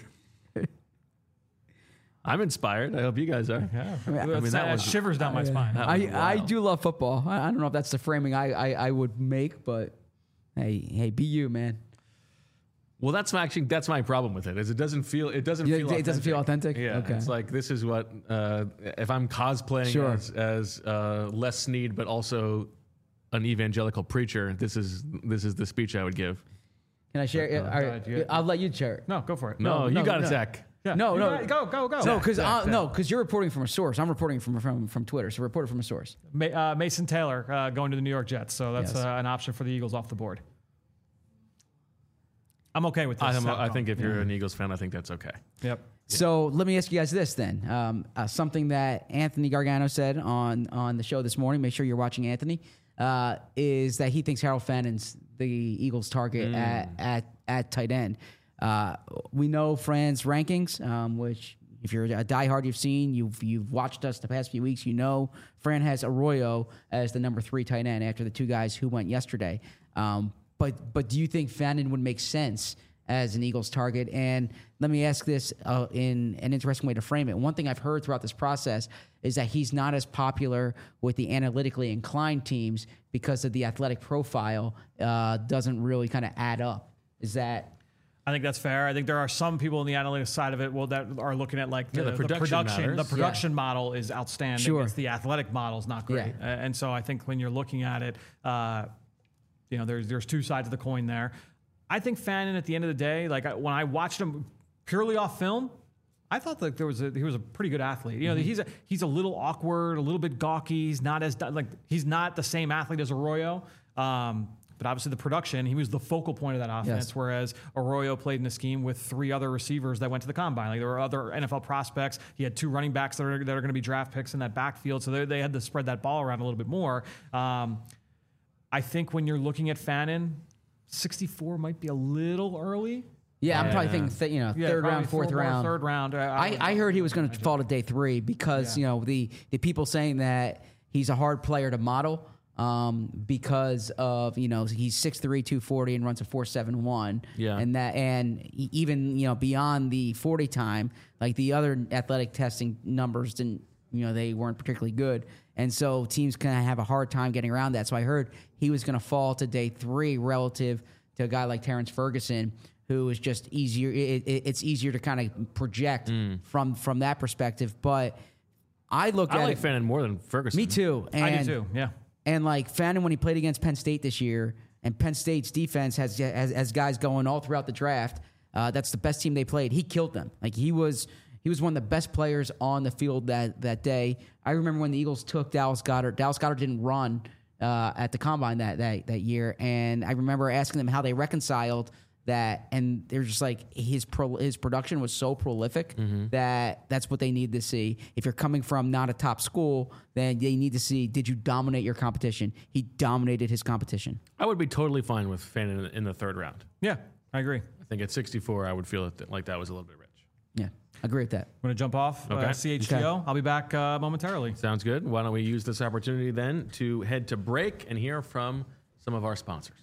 I'm inspired. I hope you guys are. Yeah, I mean, I that mean, that was- shivers down my spine. That was I, I wild. do love football. I, I don't know if that's the framing I, I, I would make, but hey, hey, be you, man. Well, that's my, actually that's my problem with it. Is it doesn't feel it doesn't Yeah, feel it doesn't feel authentic? Yeah, Okay. it's like this is what uh, if I'm cosplaying Sure. as, as uh, Les Snead, but also an evangelical preacher. This is this is the speech I would give. Can I share it? All right, ahead, yeah. I'll let you share it. No, go for it. No, No, you no, got no. it, Zach. Yeah. No, You no. got it. go, go, go. No, because Zach, Zach. no, because you're reporting from a source. I'm reporting from from from Twitter. So reported from a source. Ma- uh, Mason Taylor uh, going to the New York Jets, so that's Yes. uh, an option for the Eagles off the board. I'm okay with this. I'm, I outcome. think if you're an Eagles fan, I think that's okay. Yep. So let me ask you guys this then. Um, uh, something that Anthony Gargano said on on the show this morning. Make sure you're watching Anthony. Uh, is that he thinks Harold Fannon's the Eagles' target at, at at tight end. Uh, we know Fran's rankings, um, which if you're a diehard, you've seen, you've you've watched us the past few weeks. You know Fran has Arroyo as the number three tight end after the two guys who went yesterday. Um, but but do you think Fannin would make sense as an Eagles target? And let me ask this uh, in an interesting way to frame it. One thing I've heard throughout this process is that he's not as popular with the analytically inclined teams because of the athletic profile uh, doesn't really kind of add up. Is that... I think that's fair. I think there are some people in the analytics side of it well, that are looking at like the, Yeah, the production production. The matters. production model is outstanding. Sure. It's the athletic model is not great. Yeah. Uh, and so I think when you're looking at it, uh, you know, there's there's two sides of the coin there. I think Fannin at the end of the day, like I, when I watched him purely off film, I thought that there was a, he was a pretty good athlete. You know, Mm-hmm. he's a he's a little awkward, a little bit gawky. He's not as like he's not the same athlete as Arroyo. Um, but obviously the production, he was the focal point of that offense. Yes. Whereas Arroyo played in a scheme with three other receivers that went to the combine. Like there were other N F L prospects. He had two running backs that are that are going to be draft picks in that backfield. So they they had to spread that ball around a little bit more. Um, I think when you're looking at Fannin, sixty-four might be a little early. Yeah, I'm Yeah. probably thinking, th- you know, Yeah, third probably round, fourth four- round. Third round. Uh, I, I heard he was going to fall to day three because, Yeah. you know, the, the people saying that he's a hard player to model um, because of, you know, he's six three, two forty and runs a four seven one. Yeah. And that, and e- even, you know, beyond the forty time, like the other athletic testing numbers didn't, you know, they weren't particularly good. And so teams kind of have a hard time getting around that. So I heard he was going to fall to day three relative to a guy like Terrence Ferguson, who is just easier. It, it, it's easier to kind of project from from that perspective. But I look I at like it. Fannin more than Ferguson. Me too. And, I do too. Yeah. And like Fannin, when he played against Penn State this year, and Penn State's defense has has, has guys going all throughout the draft. Uh, that's the best team they played. He killed them. Like he was. He was one of the best players on the field that, that day. I remember when the Eagles took Dallas Goedert. Dallas Goedert didn't run uh, at the combine that, that that year, and I remember asking them how they reconciled that, and they're just like his pro, his production was so prolific mm-hmm. that that's what they need to see. If you're coming from not a top school, then they need to see, did you dominate your competition? He dominated his competition. I would be totally fine with Fannin in, in the third round. Yeah, I agree. I think at sixty-four, I would feel like that was a little bit rich. Yeah, I agree with that. I'm going to jump off okay. uh, C H G O. Okay. I'll be back uh, momentarily. Sounds good. Why don't we use this opportunity then to head to break and hear from some of our sponsors.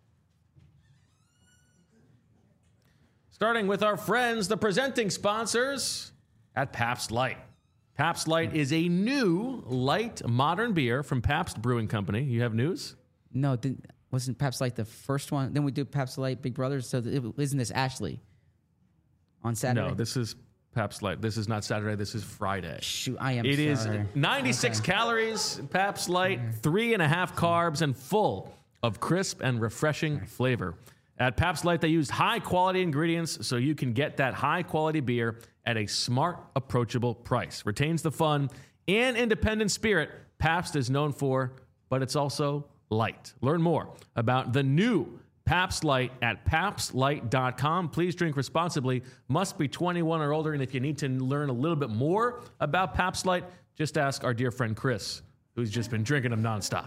Starting with our friends, the presenting sponsors at Pabst Light. Pabst Light is a new light modern beer from Pabst Brewing Company. You have news? No, didn't, wasn't Pabst Light the first one? Then we do Pabst Light Big Brothers. So it, isn't this Ashley on Saturday? No, this is Pabst Light. This is not Saturday. This is Friday. Shoot, I am It sorry. is ninety-six okay. calories, Pabst Light, three and a half carbs, and full of crisp and refreshing flavor. At Pabst Light, they used high-quality ingredients so you can get that high-quality beer at a smart, approachable price. Retains the fun and independent spirit Pabst is known for, but it's also light. Learn more about the new Pabst Light at pabst light dot com. Please drink responsibly. Must be twenty-one or older. And if you need to learn a little bit more about Pabst Light, just ask our dear friend Chris, who's just been drinking them nonstop.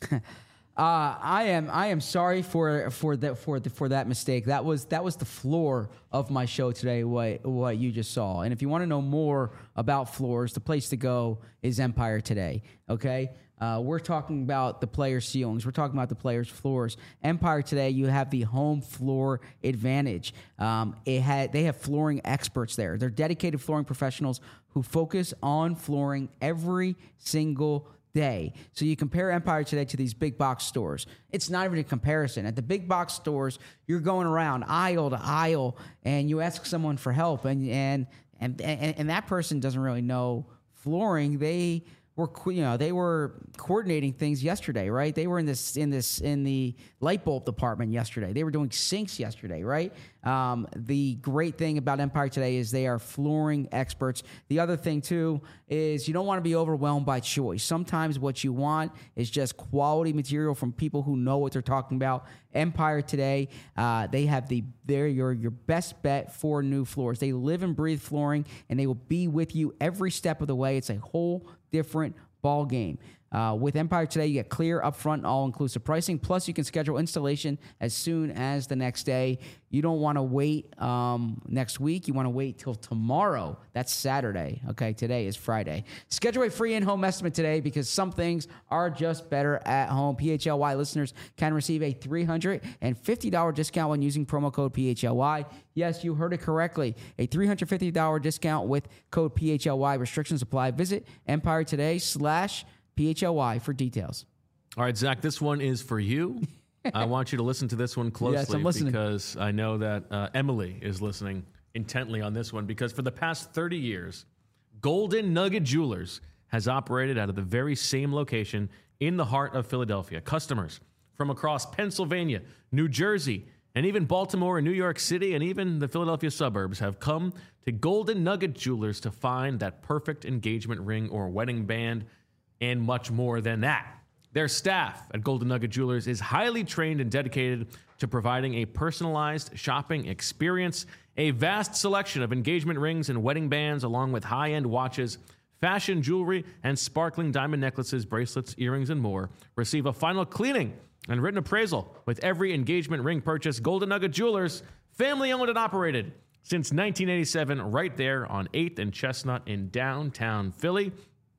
Uh, I am I am sorry for for that for the, for that mistake. That was that was the floor of my show today. What what you just saw. And if you want to know more about floors, the place to go is Empire Today. Okay, uh, we're talking about the players' ceilings. We're talking about the players' floors. Empire Today, you have the home floor advantage. Um, it had they have flooring experts there. They're dedicated flooring professionals who focus on flooring every single day. So you compare Empire Today to these big box stores. It's not even a comparison. At the big box stores, you're going around aisle to aisle and you ask someone for help and and and and, and that person doesn't really know flooring. They were you know they were coordinating things yesterday, right? They were in this in this in the light bulb department yesterday. They were doing sinks yesterday, right? Um, the great thing about Empire Today is they are flooring experts. The other thing too is you don't want to be overwhelmed by choice. Sometimes what you want is just quality material from people who know what they're talking about. Empire Today, uh, they have the they're your your best bet for new floors. They live and breathe flooring, and they will be with you every step of the way. It's a whole different ball game. Uh, with Empire Today, you get clear, upfront, all-inclusive pricing. Plus, you can schedule installation as soon as the next day. You don't want to wait um, next week. You want to wait till tomorrow. That's Saturday. Okay, today is Friday. Schedule a free in-home estimate today because some things are just better at home. P H L Y listeners can receive a three hundred fifty dollars discount when using promo code P H L Y. Yes, you heard it correctly. A three hundred fifty dollars discount with code P H L Y. Restrictions apply. Visit Empire Today slash P H L Y for details. All right, Zach, this one is for you. I want you to listen to this one closely yes, I'm listening. because I know that uh, Emily is listening intently on this one because for the past thirty years, Golden Nugget Jewelers has operated out of the very same location in the heart of Philadelphia. Customers from across Pennsylvania, New Jersey, and even Baltimore and New York City and even the Philadelphia suburbs have come to Golden Nugget Jewelers to find that perfect engagement ring or wedding band and much more than that. Their staff at Golden Nugget Jewelers is highly trained and dedicated to providing a personalized shopping experience. A vast selection of engagement rings and wedding bands, along with high-end watches, fashion jewelry, and sparkling diamond necklaces, bracelets, earrings, and more, receive a final cleaning and written appraisal with every engagement ring purchase. Golden Nugget Jewelers, family-owned and operated since nineteen eighty-seven, right there on eighth and Chestnut in downtown Philly.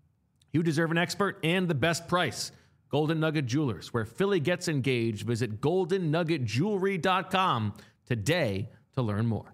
You deserve an expert and the best price. Golden Nugget Jewelers, where Philly gets engaged. Visit golden nugget jewelry dot com today to learn more.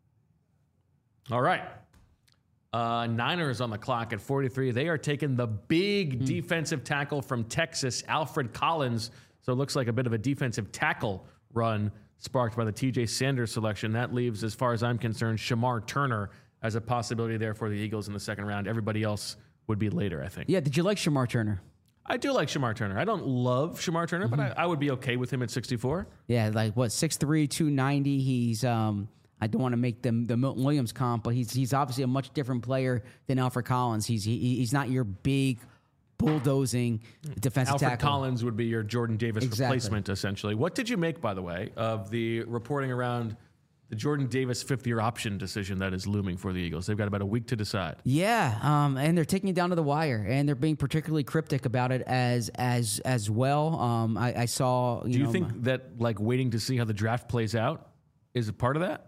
All right. Uh, Niners on the clock at forty-three. They are taking the big mm. defensive tackle from Texas, Alfred Collins. So it looks like a bit of a defensive tackle run sparked by the T J Sanders selection. That leaves, as far as I'm concerned, Shamar Turner as a possibility there for the Eagles in the second round. Everybody else would be later, I think. Yeah, did you like Shamar Turner? I do like Shamar Turner. I don't love Shamar Turner, mm-hmm. but I, I would be okay with him at sixty-four. Yeah, like what, six three, two ninety. He's, um, I don't want to make them the Milton Williams comp, but he's he's obviously a much different player than Alfred Collins. He's he, he's not your big bulldozing defensive Alfred tackle. Collins would be your Jordan Davis Exactly. replacement, essentially. What did you make, by the way, of the reporting around the Jordan Davis fifth-year option decision that is looming for the Eagles? They've got about a week to decide. Yeah, um, and they're taking it down to the wire, and they're being particularly cryptic about it as as as well. Um, I, I saw. You Do you know, think my- that like waiting to see how the draft plays out is a part of that?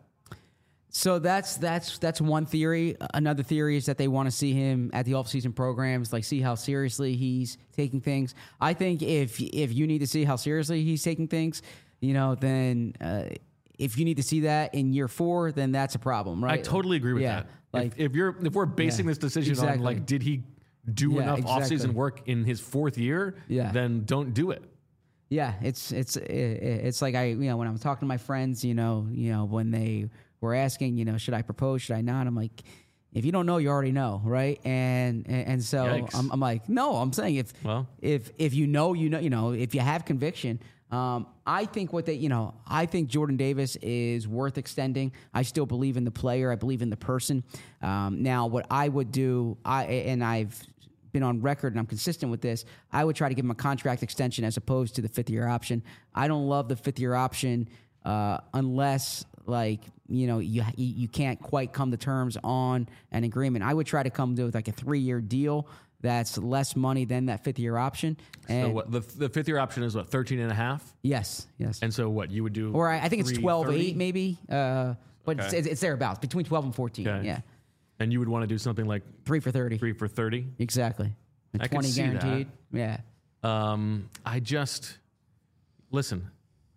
So that's that's that's one theory. Another theory is that they want to see him at the offseason programs, like see how seriously he's taking things. I think if if you need to see how seriously he's taking things, you know, then uh, if you need to see that in year four, then that's a problem, right? I totally agree with yeah, that. Like if, if you're if we're basing yeah, this decision exactly. on like did he do Yeah, enough exactly. offseason work in his fourth year, Yeah. then don't do it. Yeah, it's it's it's like I you know when I'm talking to my friends, you know, you know when they were asking, you know, should I propose, should I not? I'm like, if you don't know, you already know, right? And and, and so I'm, I'm like, no, I'm saying if Well. if if you know, you know, you know, if you have conviction. Um, I think what they, you know, I think Jordan Davis is worth extending. I still believe in the player. I believe in the person. Um, now, what I would do, I and I've been on record and I'm consistent with this, I would try to give him a contract extension as opposed to the fifth year option. I don't love the fifth year option uh, unless like, you know, you you can't quite come to terms on an agreement. I would try to come to like a three year deal that's less money than that fifth year option. And So what the, the fifth year option is what, thirteen and a half? yes, yes. And so what you would do? Or I, I think it's twelve eight maybe, uh, but Okay. it's, it's thereabouts, between twelve and fourteen, Okay. yeah. And you would want to do something like Three for thirty. three for thirty? Exactly. And I can twenty see that. guaranteed. Yeah. Um, I just listen.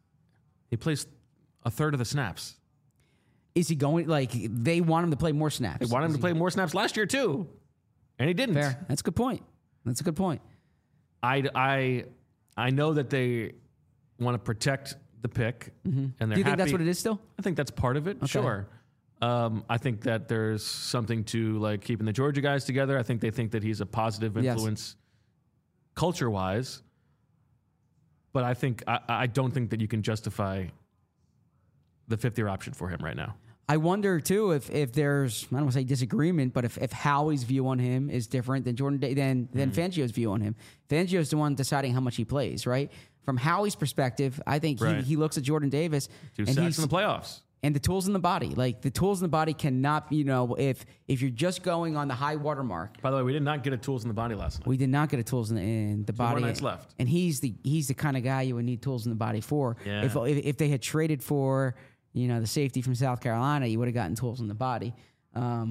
He plays a third of the snaps. Is he going, like, they want him to play more snaps. They wanted him Is to play more snaps last year too, and he didn't. Fair. That's a good point. That's a good point. I, I, I know that they want to protect the pick, and they're Do you think that's happy- what it is still? I think that's part of it. Sure. Um, I think that there's something to like keeping the Georgia guys together. I think they think that he's a positive Yes. influence culture wise. But I think I, I don't think that you can justify the fifth year option for him right now. I wonder too if if there's I don't want to say disagreement, but if, if Howie's view on him is different than Jordan Day, than than Mm-hmm. Fangio's view on him. Fangio's the one deciding how much he plays, right? From Howie's perspective, I think Right. he, he looks at Jordan Davis Two and sacks he's in the playoffs. and the tools in the body. Like the tools in the body cannot, you know, if if you're just going on the high water mark. By the way, we did not get a tools in the body last night. We did not get a tools in the, in the body. more nights left. And he's the he's the kind of guy you would need tools in the body for. Yeah. If, if if they had traded for, you know, the safety from South Carolina, you would have gotten tools in the body. Um,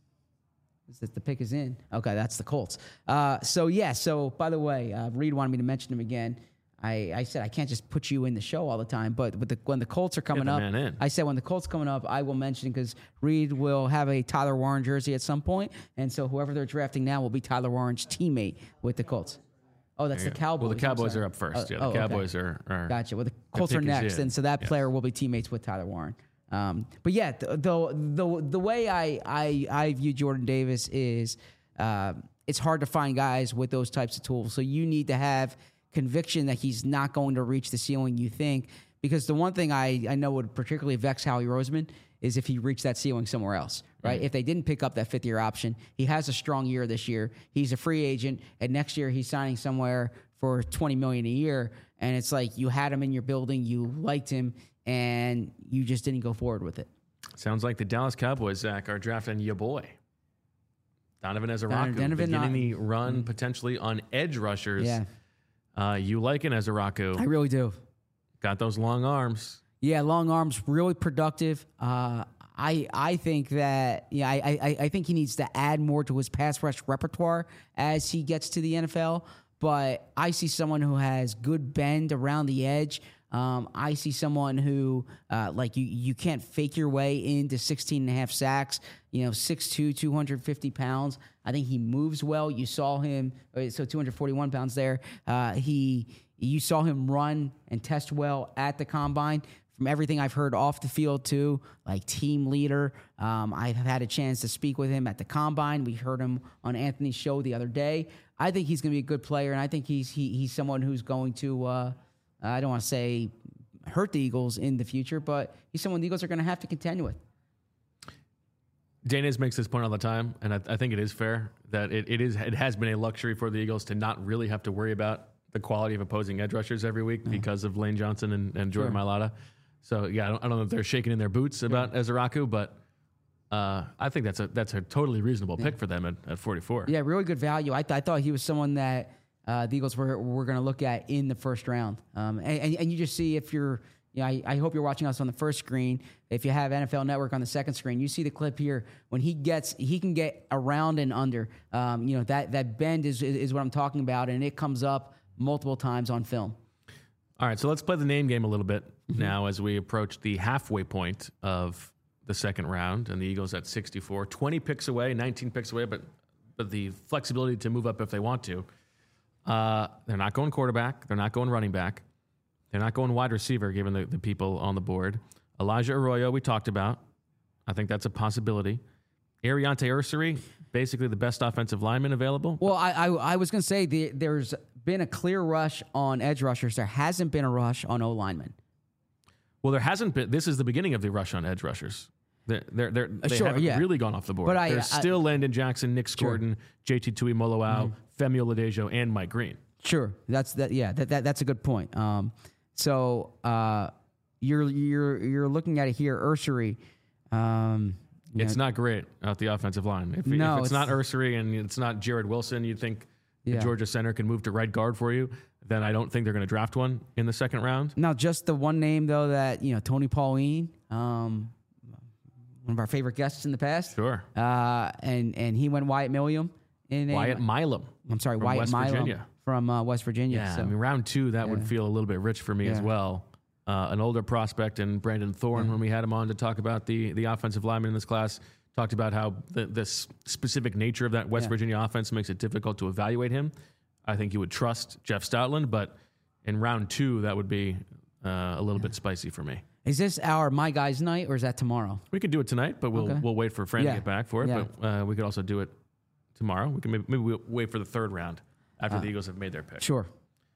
is that the pick is in? Okay, that's the Colts. Uh, so yeah. So by the way, uh, Reed wanted me to mention him again. I, I said I can't just put you in the show all the time, but with the, when the Colts are coming the up, man in. I said when the Colts coming up, I will mention because Reed will have a Tyler Warren jersey at some point, and so whoever they're drafting now will be Tyler Warren's teammate with the Colts. Oh, that's the Cowboys. Well, the I'm Cowboys sorry. are up first. Oh, yeah, the oh, okay. Cowboys are, are. Gotcha. Well, the Colts are pick is next, in. and so that Yes. player will be teammates with Tyler Warren. Um, but yeah, the, the the the way I I I view Jordan Davis is uh, it's hard to find guys with those types of tools. So you need to have conviction that he's not going to reach the ceiling you think. Because the one thing I, I know would particularly vex Howie Roseman is if he reached that ceiling somewhere else, right? If they didn't pick up that fifth year option, he has a strong year this year. He's a free agent, and next year he's signing somewhere for twenty million dollars a year. And it's like you had him in your building, you liked him, and you just didn't go forward with it. Sounds like the Dallas Cowboys, Zach, are drafting your boy. Donovan Ezeraku, Donovan, beginning not- the run potentially on edge rushers. Yeah, Uh, you like an Ezeraku. I really do. Got those long arms. Yeah, long arms, really productive. Uh, I I think that yeah, I, I I think he needs to add more to his pass rush repertoire as he gets to the N F L. But I see someone who has good bend around the edge. Um, I see someone who, uh, like, you you can't fake your way into sixteen and a half sacks, you know, six two, two hundred fifty pounds. I think he moves well. You saw him, uh, so two hundred forty-one pounds there. Uh, he, you saw him run and test well at the combine. From everything I've heard off the field, too, like team leader. Um, I've had a chance to speak with him at the combine. We heard him on Anthony's show the other day. I think he's going to be a good player, and I think he's he, he's someone who's going to, uh, I don't want to say hurt the Eagles in the future, but he's someone the Eagles are going to have to contend with. Danis makes this point all the time, and I, I think it is fair that it, it is it has been a luxury for the Eagles to not really have to worry about the quality of opposing edge rushers every week mm. because of Lane Johnson and, and Jordan sure. Mailata. So yeah, I don't, I don't know if they're shaking in their boots about yeah. Ezaraku, but uh, I think that's a that's a totally reasonable yeah. pick for them at, at forty-four. Yeah, really good value. I, th- I thought he was someone that uh, the Eagles were were going to look at in the first round, um, and, and and you just see if you're. Yeah, I, I hope you're watching us on the first screen. If you have N F L Network on the second screen, you see the clip here when he gets he can get around and under. Um, you know that that bend is is what I'm talking about, and it comes up multiple times on film. All right, so let's play the name game a little bit mm-hmm. now as we approach the halfway point of the second round, and the Eagles at sixty-four, twenty picks away, nineteen picks away, but but the flexibility to move up if they want to. Uh, they're not going quarterback. They're not going running back. They're not going wide receiver, given the, the people on the board. Elijah Arroyo, we talked about. I think that's a possibility. Ariante Ursary, basically the best offensive lineman available. Well, I I, I was going to say the, there's been a clear rush on edge rushers. There hasn't been a rush on O-linemen. Well, there hasn't been. This is the beginning of the rush on edge rushers. They're, they're, they're, they sure, haven't yeah. really gone off the board. But I, There's I, still Landon Jackson, Nick sure. Scorton, J T Tuimoloau, mm-hmm. Femi Oladejo, and Mike Green. Sure, that's that. Yeah, that, that that's a good point. Um, So uh, you're you're you're looking at it here, Ursary. Um, it's know, not great at the offensive line. If, no, if it's, it's not Ursary and it's not Jared Wilson, you'd think yeah. the Georgia center can move to right guard for you. Then I don't think they're going to draft one in the second round. Now, just the one name though that you know, Tony Pauline, um, one of our favorite guests in the past. Sure. Uh, and and he went Wyatt Millam in a, Wyatt Milam. I'm sorry, from Wyatt West Milam. Virginia. From uh, West Virginia. Yeah, so. I mean, round two, that yeah. would feel a little bit rich for me yeah. as well. Uh, an older prospect, and Brandon Thorne, yeah. when we had him on to talk about the the offensive lineman in this class, talked about how the, the specific nature of that West yeah. Virginia offense makes it difficult to evaluate him. I think you would trust Jeff Stoutland, but in round two, that would be uh, a little yeah. bit spicy for me. Is this our My Guys night, or is that tomorrow? We could do it tonight, but we'll okay. we'll wait for Fran yeah. to get back for it. Yeah. But uh, we could also do it tomorrow. We can maybe, maybe we'll wait for the third round after uh, the Eagles have made their pick. Sure.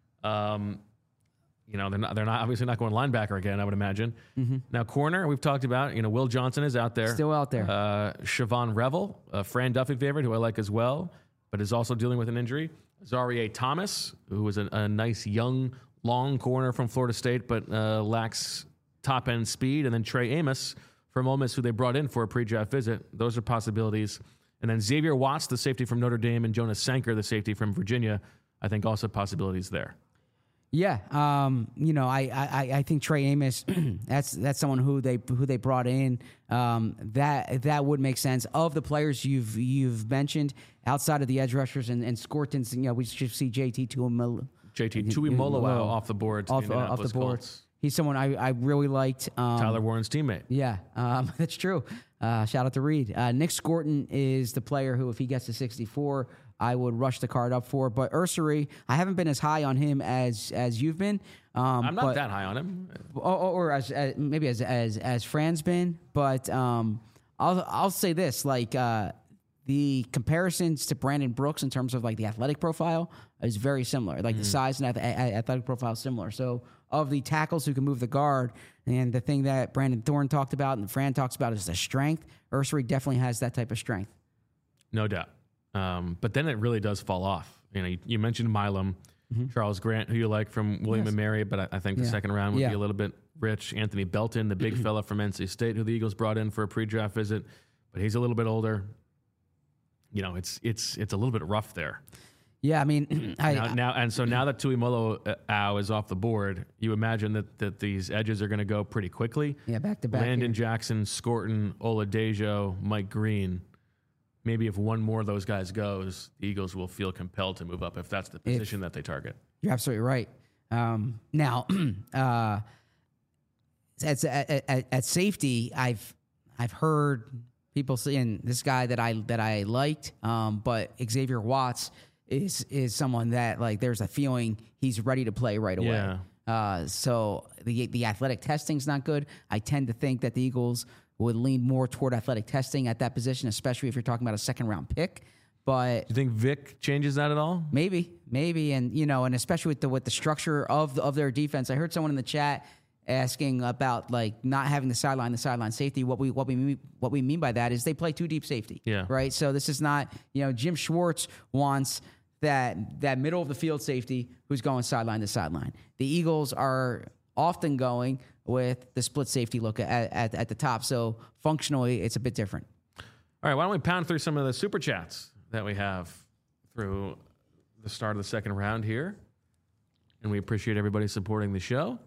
Um, you know, they're not, they're not obviously not going linebacker again, I would imagine. Mm-hmm. Now, corner, we've talked about, you know, Will Johnson is out there. Still out there. Uh, Siobhan Revel, a Fran Duffy favorite, who I like as well, but is also dealing with an injury. Zarie Thomas, who was a, a nice, young, long corner from Florida State, but uh, lacks top-end speed. And then Trey Amos from Ole Miss, who they brought in for a pre-draft visit. Those are possibilities. And then Xavier Watts, the safety from Notre Dame, and Jonas Sanker, the safety from Virginia, I think also possibilities there. Yeah, um, you know, I, I, I think Trey Amos, that's that's someone who they who they brought in. Um, that that would make sense. Of the players you've you've mentioned outside of the edge rushers and, and Scortons, you know, we should see J T Tuimoloau. J T Tuimoloau off the board. To Off, the uh, off the board. Colts. He's someone I, I really liked. Um, Tyler Warren's teammate. Yeah, um, that's true. Uh, shout out to Reed. Uh, Nick Scorton is the player who, if he gets to sixty-four, I would rush the card up for. But Ursary, I haven't been as high on him as as you've been. Um, I'm not but, that high on him. Or, or as, as maybe as as as Fran's been. But um, I'll I'll say this: like uh, the comparisons to Brandon Brooks in terms of like the athletic profile is very similar. Like mm. the size and ath- athletic profile is similar. So of the tackles who can move the guard, and the thing that Brandon Thorne talked about and Fran talks about is the strength. Ursary definitely has that type of strength. No doubt. Um, but then it really does fall off. You know, you, you mentioned Milam, mm-hmm. Charles Grant, who you like from William yes. and Mary, but I, I think the yeah. second round would yeah. be a little bit rich. Anthony Belton, the big fella from N C State, who the Eagles brought in for a pre-draft visit, but he's a little bit older. You know, it's it's it's a little bit rough there. Yeah, I mean, I, now, now and so now that Tuimoloau is off the board, you imagine that, that these edges are going to go pretty quickly. Yeah, back to back. Landon here. Jackson, Scorton, Oladejo, Mike Green. Maybe if one more of those guys goes, the Eagles will feel compelled to move up if that's the position if, that they target. You're absolutely right. Um, now, uh, at, at, at, at safety, I've I've heard people saying this guy that I that I liked, um, but Xavier Watts is is someone that like there's a feeling he's ready to play right away. Yeah. Uh, so the the athletic testing's not good. I tend to think that the Eagles would lean more toward athletic testing at that position, especially if you're talking about a second round pick. But do you think Vic changes that at all? Maybe, maybe, and you know, and especially with the with the structure of the, of their defense. I heard someone in the chat asking about like not having the sideline, the sideline safety. What we what we mean, what we mean by that is they play two deep safety. Yeah. Right. So this is not, you know, Jim Schwartz wants that that middle of the field safety who's going sideline to sideline. The Eagles are often going with the split safety look at, at, at the top. So functionally, it's a bit different. All right, why don't we pound through some of the super chats that we have through the start of the second round here. And we appreciate everybody supporting the show.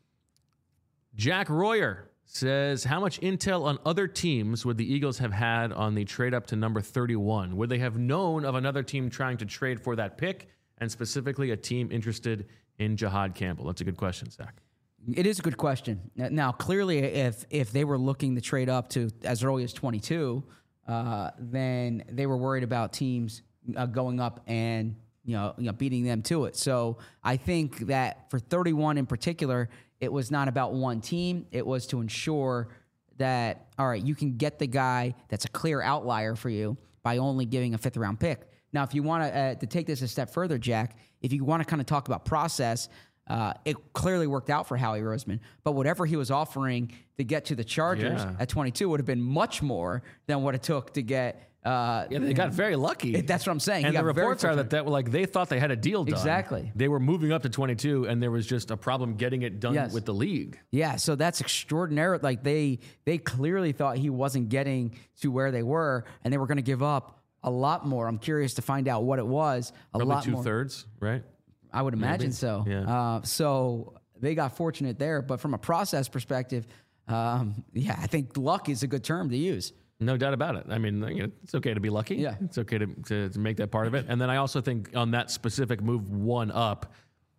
Jack Royer says, how much intel on other teams would the Eagles have had on the trade up to number thirty-one? Would they have known of another team trying to trade for that pick, and specifically a team interested in Jihad Campbell? That's a good question, Zach. It is a good question. Now, clearly, if if they were looking to trade up to as early as twenty-two, uh, then they were worried about teams uh, going up and you know, you know beating them to it. So I think that for thirty-one in particular, it was not about one team. It was to ensure that, all right, you can get the guy that's a clear outlier for you by only giving a fifth round pick. Now, if you want to uh, to take this a step further, Jack, if you want to kind of talk about process, uh, it clearly worked out for Howie Roseman. But whatever he was offering to get to the Chargers Yeah. at twenty-two would have been much more than what it took to get. Uh, Yeah, they got very lucky. That's what I'm saying. He And the got very reports are that, that like they thought they had a deal done. Exactly. They were moving up to twenty-two, and there was just a problem getting it done Yes. with the league. Yeah, so that's extraordinary. Like they they clearly thought he wasn't getting to where they were, and they were going to give up a lot more. I'm curious to find out what it was. A Probably lot two more. thirds, right? I would imagine Maybe. so. Yeah. Uh, so they got fortunate there, but from a process perspective, um, yeah, I think luck is a good term to use. No doubt about it. I mean, you know, it's okay to be lucky. Yeah. It's okay to, to, to make that part of it. And then I also think on that specific move one up,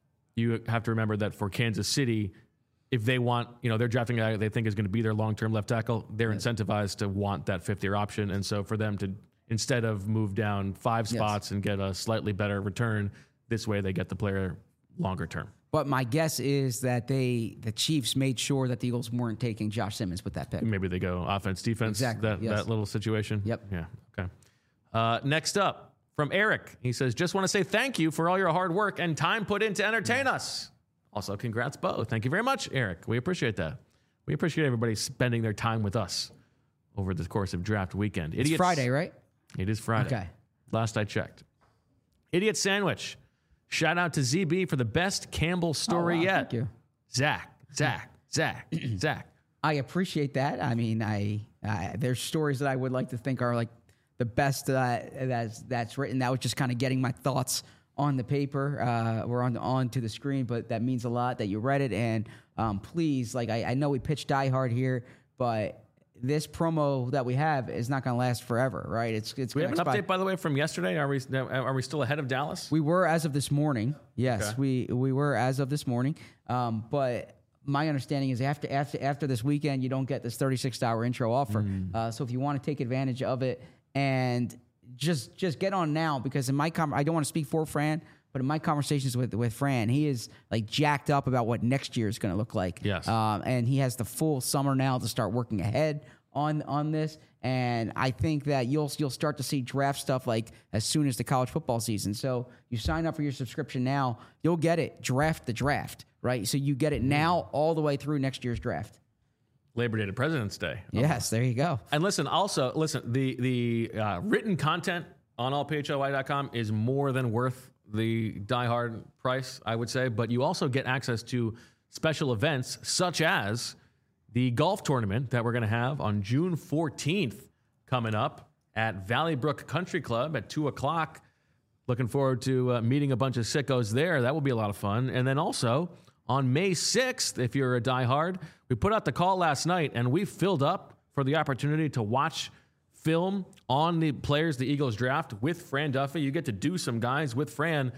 you have to remember that for Kansas City, if they want, you know, they're drafting a guy they think is going to be their long-term left tackle, they're Yes. incentivized to want that fifth-year option. And so for them to, instead of move down five Yes. spots and get a slightly better return, this way they get the player longer term. But my guess is that they, the Chiefs, made sure that the Eagles weren't taking Josh Simmons with that pick. Maybe they go offense, defense, Exactly, that, yes. that little situation. Yep. Yeah, okay. Uh, next up, from Eric, he says, just want to say thank you for all your hard work and time put in to entertain us. Also, congrats, Bo. Thank you very much, Eric. We appreciate that. We appreciate everybody spending their time with us over the course of draft weekend. It's Friday, right? It is Friday. Okay. Last I checked. Idiot Sandwich. Shout out to Z B for the best Campbell story Oh, wow, yet. thank you. Zach, Zach, Zach, Zach. I appreciate that. I mean, I, I there's stories that I would like to think are like the best uh, that's that's written. That was just kind of getting my thoughts on the paper uh, or on on to the screen, but that means a lot that you read it. And um, please, like I, I know we pitched Die Hard here, but this promo that we have is not going to last forever, right? It's it's. We have gonna an expire. update, by the way, from yesterday. Are we are we still ahead of Dallas? We were as of this morning. Yes, Okay. we we were as of this morning. Um, but my understanding is after after after this weekend, you don't get this thirty-six hour intro offer. Mm. Uh, so if you want to take advantage of it and just just get on now, because in my com- I don't want to speak for Fran, but in my conversations with with Fran, he is like jacked up about what next year is going to look like. Yes. Um, and he has the full summer now to start working ahead on on this. And I think that you'll you'll start to see draft stuff like as soon as the college football season. So you sign up for your subscription now, you'll get it draft the draft, right? So you get it now all the way through next year's draft. Labor Day to President's Day. Yes, there you go. And listen, also listen. The the uh, written content on all p h l y dot com is more than worth the Die Hard price, I would say. But you also get access to special events such as the golf tournament that we're going to have on June fourteenth coming up at Valley Brook Country Club at two o'clock. Looking forward to uh, meeting a bunch of sickos there. That will be a lot of fun. And then also on May sixth, if you're a diehard, we put out the call last night and we filled up for the opportunity to watch film on the players the Eagles draft with Fran Duffy. You get to do some guys with Fran.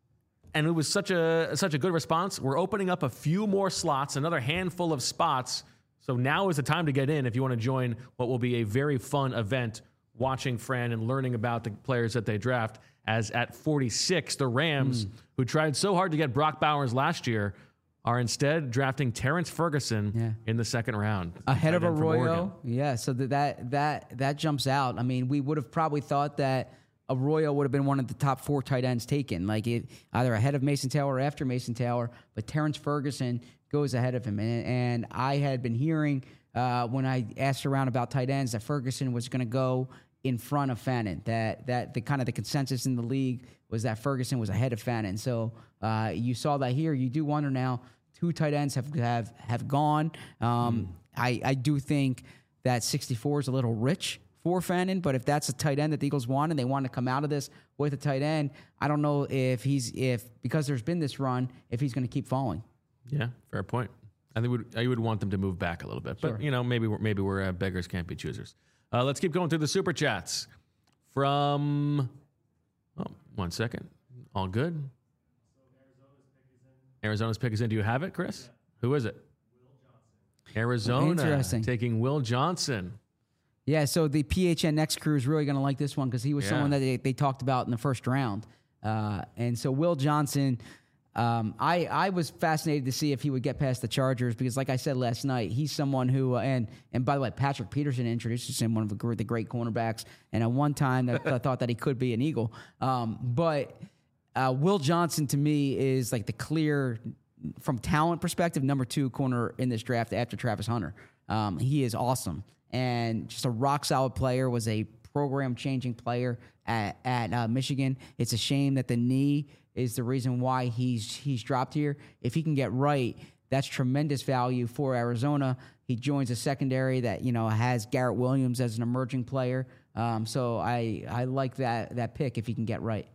And it was such a such a good response. We're opening up a few more slots, another handful of spots. So now is the time to get in if you want to join what will be a very fun event, watching Fran and learning about the players that they draft. As at forty-six, the Rams, mm. who tried so hard to get Brock Bowers last year, are instead drafting Terrence Ferguson yeah. in the second round. Ahead of Arroyo. Yeah, so that, that that that jumps out. I mean, we would have probably thought that Arroyo would have been one of the top four tight ends taken, like it, either ahead of Mason Taylor or after Mason Taylor. But Terrence Ferguson goes ahead of him. And, and I had been hearing uh, when I asked around about tight ends that Ferguson was going to go in front of Fannin, that that the kind of the consensus in the league was that Ferguson was ahead of Fannin. So uh, you saw that here. You do wonder now, two tight ends have have, have gone. Um, mm. I, I do think that sixty-four is a little rich for Fannin, but if that's a tight end that the Eagles want and they want to come out of this with a tight end, I don't know if he's, if because there's been this run, if he's going to keep falling. Yeah, fair point. I think would, I would want them to move back a little bit, but sure. you know, maybe we're, maybe we're uh, beggars can't be choosers. Uh, let's keep going through the super chats from, oh, one second. All good. Arizona's pick is in. Do you have it, Chris? Yeah. Who is it? Arizona Interesting. taking Will Johnson. Yeah, so the P H N X crew is really going to like this one because he was yeah. someone that they, they talked about in the first round. Uh, and so Will Johnson, um, I, I was fascinated to see if he would get past the Chargers because, like I said last night, he's someone who, uh, and and by the way, Patrick Peterson introduces him, one of the great, the great cornerbacks, and at one time I thought that he could be an Eagle. Um, but uh, Will Johnson, to me, is like the clear, from talent perspective, number two corner in this draft after Travis Hunter. Um, he is awesome. And just a rock-solid player, was a program-changing player at, at uh, Michigan. It's a shame that the knee is the reason why he's he's dropped here. If he can get right, that's tremendous value for Arizona. He joins a secondary that, you know, has Garrett Williams as an emerging player. Um, so I I like that that pick if he can get right.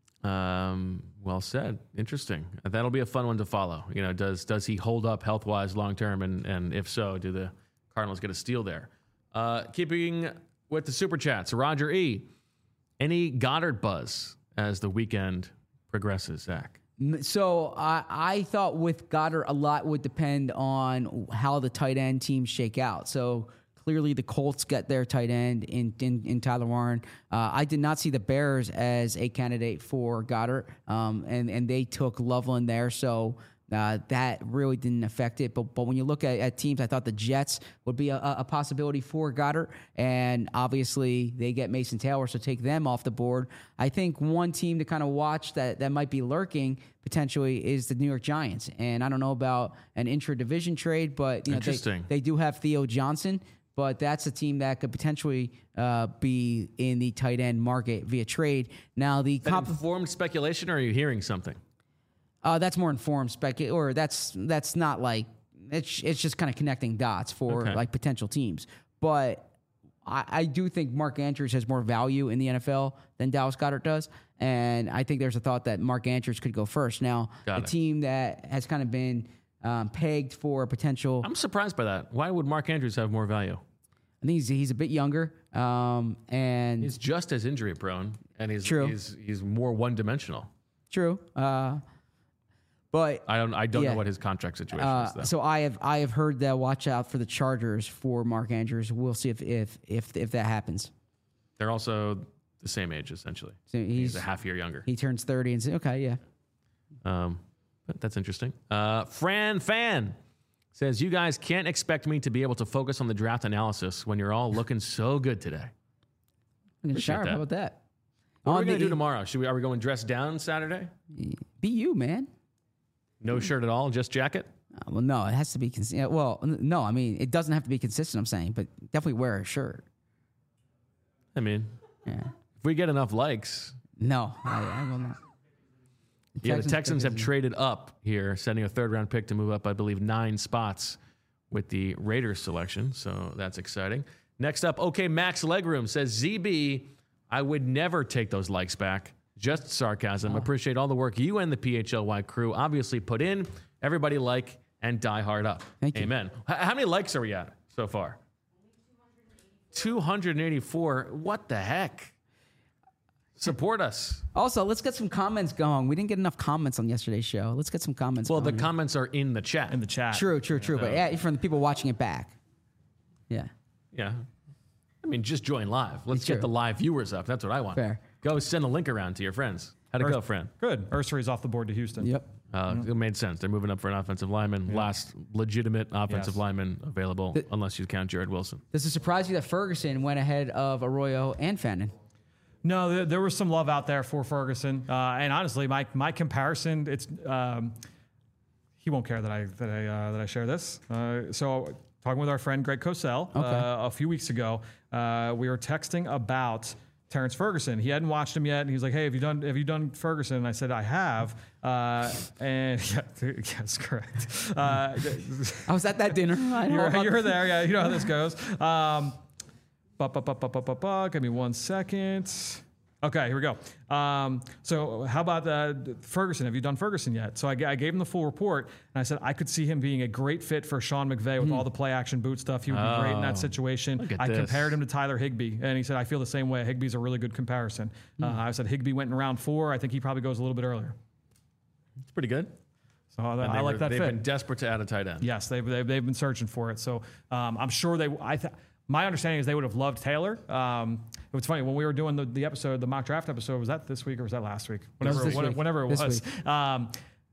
Um, well said. Interesting. That'll be a fun one to follow. You know, does does he hold up health-wise long-term? And, and if so, do the Cardinals get a steal there? Uh, keeping with the super chats, Roger E. Any Goddard buzz as the weekend progresses, Zach? So I, I thought with Goddard, a lot would depend on how the tight end teams shake out. So clearly the Colts get their tight end in, in, in Tyler Warren. Uh, I did not see the Bears as a candidate for Goddard, um, and, and they took Loveland there. So Uh, that really didn't affect it. But but when you look at, at teams, I thought the Jets would be a, a possibility for Goddard. And obviously, they get Mason Taylor, so take them off the board. I think one team to kind of watch that, that might be lurking potentially is the New York Giants. And I don't know about an intra-division trade, but you know, they, they do have Theo Johnson. But that's a team that could potentially uh, be in the tight end market via trade. Now, the comp- informed speculation, or are you hearing something? Uh, that's more informed spec, or that's that's not like it's it's just kind of connecting dots for okay. like potential teams. But I, I do think Mark Andrews has more value in the N F L than Dallas Goedert does, and I think there's a thought that Mark Andrews could go first. Now, Got a it. team that has kind of been um, pegged for a potential. I'm surprised by that. Why would Mark Andrews have more value? I think he's he's a bit younger, um, and he's just as injury prone, and he's true. he's he's more one dimensional. True. Uh, But I don't. I don't yeah. know what his contract situation uh, is. Though. So I have. I have heard that. Watch out for the Chargers for Mark Andrews. We'll see if if if, if that happens. They're also the same age essentially. So he's, he's a half year younger. He turns thirty and say, okay, yeah. Um, but that's interesting. Uh, Fran Fan says, "You guys can't expect me to be able to focus on the draft analysis when you're all looking so good today." Sharp. How about that? What on are we going to do tomorrow? Should we? Are we going dressed down Saturday? Be you, man. No shirt at all, just jacket? Uh, well, no, it has to be consistent. Well, no, I mean, it doesn't have to be consistent, I'm saying, but definitely wear a shirt. I mean, yeah. If we get enough likes. No, I, I will not. The yeah, Texans the Texans have traded up here, sending a third-round pick to move up, I believe, nine spots with the Raiders selection, so that's exciting. Next up, OK Max Legroom says, Z B, I would never take those likes back. Just sarcasm. Oh. Appreciate all the work you and the P H L Y crew obviously put in. Everybody like and die hard up. Thank you. Amen. H- how many likes are we at so far? two hundred eighty-four. What the heck? Support us. Also, let's get some comments going. We didn't get enough comments on yesterday's show. Let's get some comments well, going. the comments are in the chat. In the chat. True, true, true. So. But yeah, from the people watching it back. Yeah. Yeah. I mean, just join live. Let's get the live viewers up. That's what I want. Fair. Go send a link around to your friends. How'd it Ur- go, friend? Good. Ursary's off the board to Houston. Yep. Uh, mm-hmm. It made sense. They're moving up for an offensive lineman. Yep. Last legitimate offensive yes. lineman available, the, unless you count Jared Wilson. Does it surprise you that Ferguson went ahead of Arroyo and Fannin? No, there, there was some love out there for Ferguson, uh, and honestly, my my comparison, it's um, he won't care that I that I uh, that I share this. Uh, so talking with our friend Greg Cosell Okay. uh, a few weeks ago, uh, we were texting about Terrence Ferguson. He hadn't watched him yet, and he's like, "Hey, have you done have you done Ferguson?" And I said, "I have," uh, and yeah, yes, correct. Uh, I was at that dinner. I know you're, about you're this. there, yeah. You know how this goes. Um, Ba, ba, ba, ba, ba, ba, ba. Give me one second. Okay, here we go. Um, so how about uh, Ferguson? Have you done Ferguson yet? So I, I gave him the full report, and I said I could see him being a great fit for Sean McVay with all the play-action boot stuff. He would be great in that Oh, situation. look at I this. compared him to Tyler Higbee, and he said, I feel the same way. Higbee's a really good comparison. Uh, I said Higbee went in round four. I think he probably goes a little bit earlier. It's pretty good. So I, And I they like were- that They've fit. been desperate to add a tight end. Yes, they've, they've, they've been searching for it. So um, I'm sure they, I th- my understanding is they would have loved Taylor. Um, it was funny when we were doing the, the episode, the mock draft episode, was that this week or was that last week? was Whenever, this when- week. whenever it This was. Um,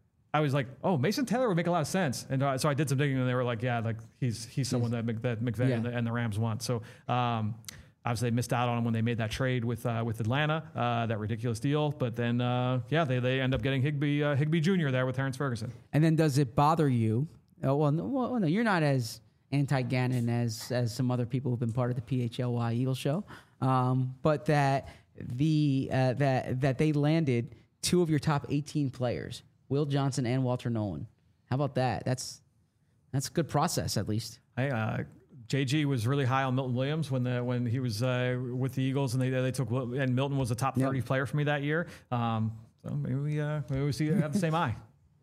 I was like, oh, Mason Taylor would make a lot of sense. And uh, so I did some digging and they were like, yeah, like he's, he's someone that, Mc, that McVay Yeah. and, the, and the Rams want. So um, obviously they missed out on him when they made that trade with uh, with Atlanta, uh, that ridiculous deal. But then, uh, yeah, they, they end up getting Higbee, uh, Higbee Junior there with Terrence Ferguson. And then does it bother you? Oh, well, no, well, no, you're not as anti-Gannon as as some other people who've been part of the P H L Y Eagle show, um, but that the uh, that that they landed two of your top eighteen players, Will Johnson and Walter Nolan. How about that? That's that's a good process, at least. Hey, uh, J G was really high on Milton Williams when the when he was uh, with the Eagles, and they they took and Milton was a top thirty Yep. player for me that year. Um, so maybe we uh, maybe we see have the same eye.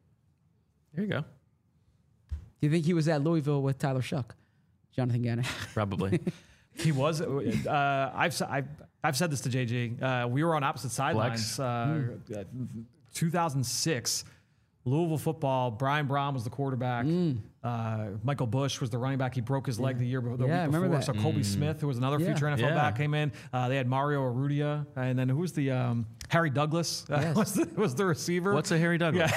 There you go. Do you think he was at Louisville with Tyler Shuck, Jonathan Gannon? Probably. He was. Uh, I've s- I've I've said this to J G. Uh, we were on opposite sidelines. Uh, uh, two thousand six, Louisville football. Brian Brown was the quarterback. Uh, Michael Bush was the running back. He broke his leg the year before. The Yeah, I week remember before. that. So Colby Smith, who was another Yeah. future N F L Yeah. back, came in. Uh, they had Mario Arudia, and then who was the um, Harry Douglas uh, Yes. was, the, was the receiver. What's a Harry Douglas?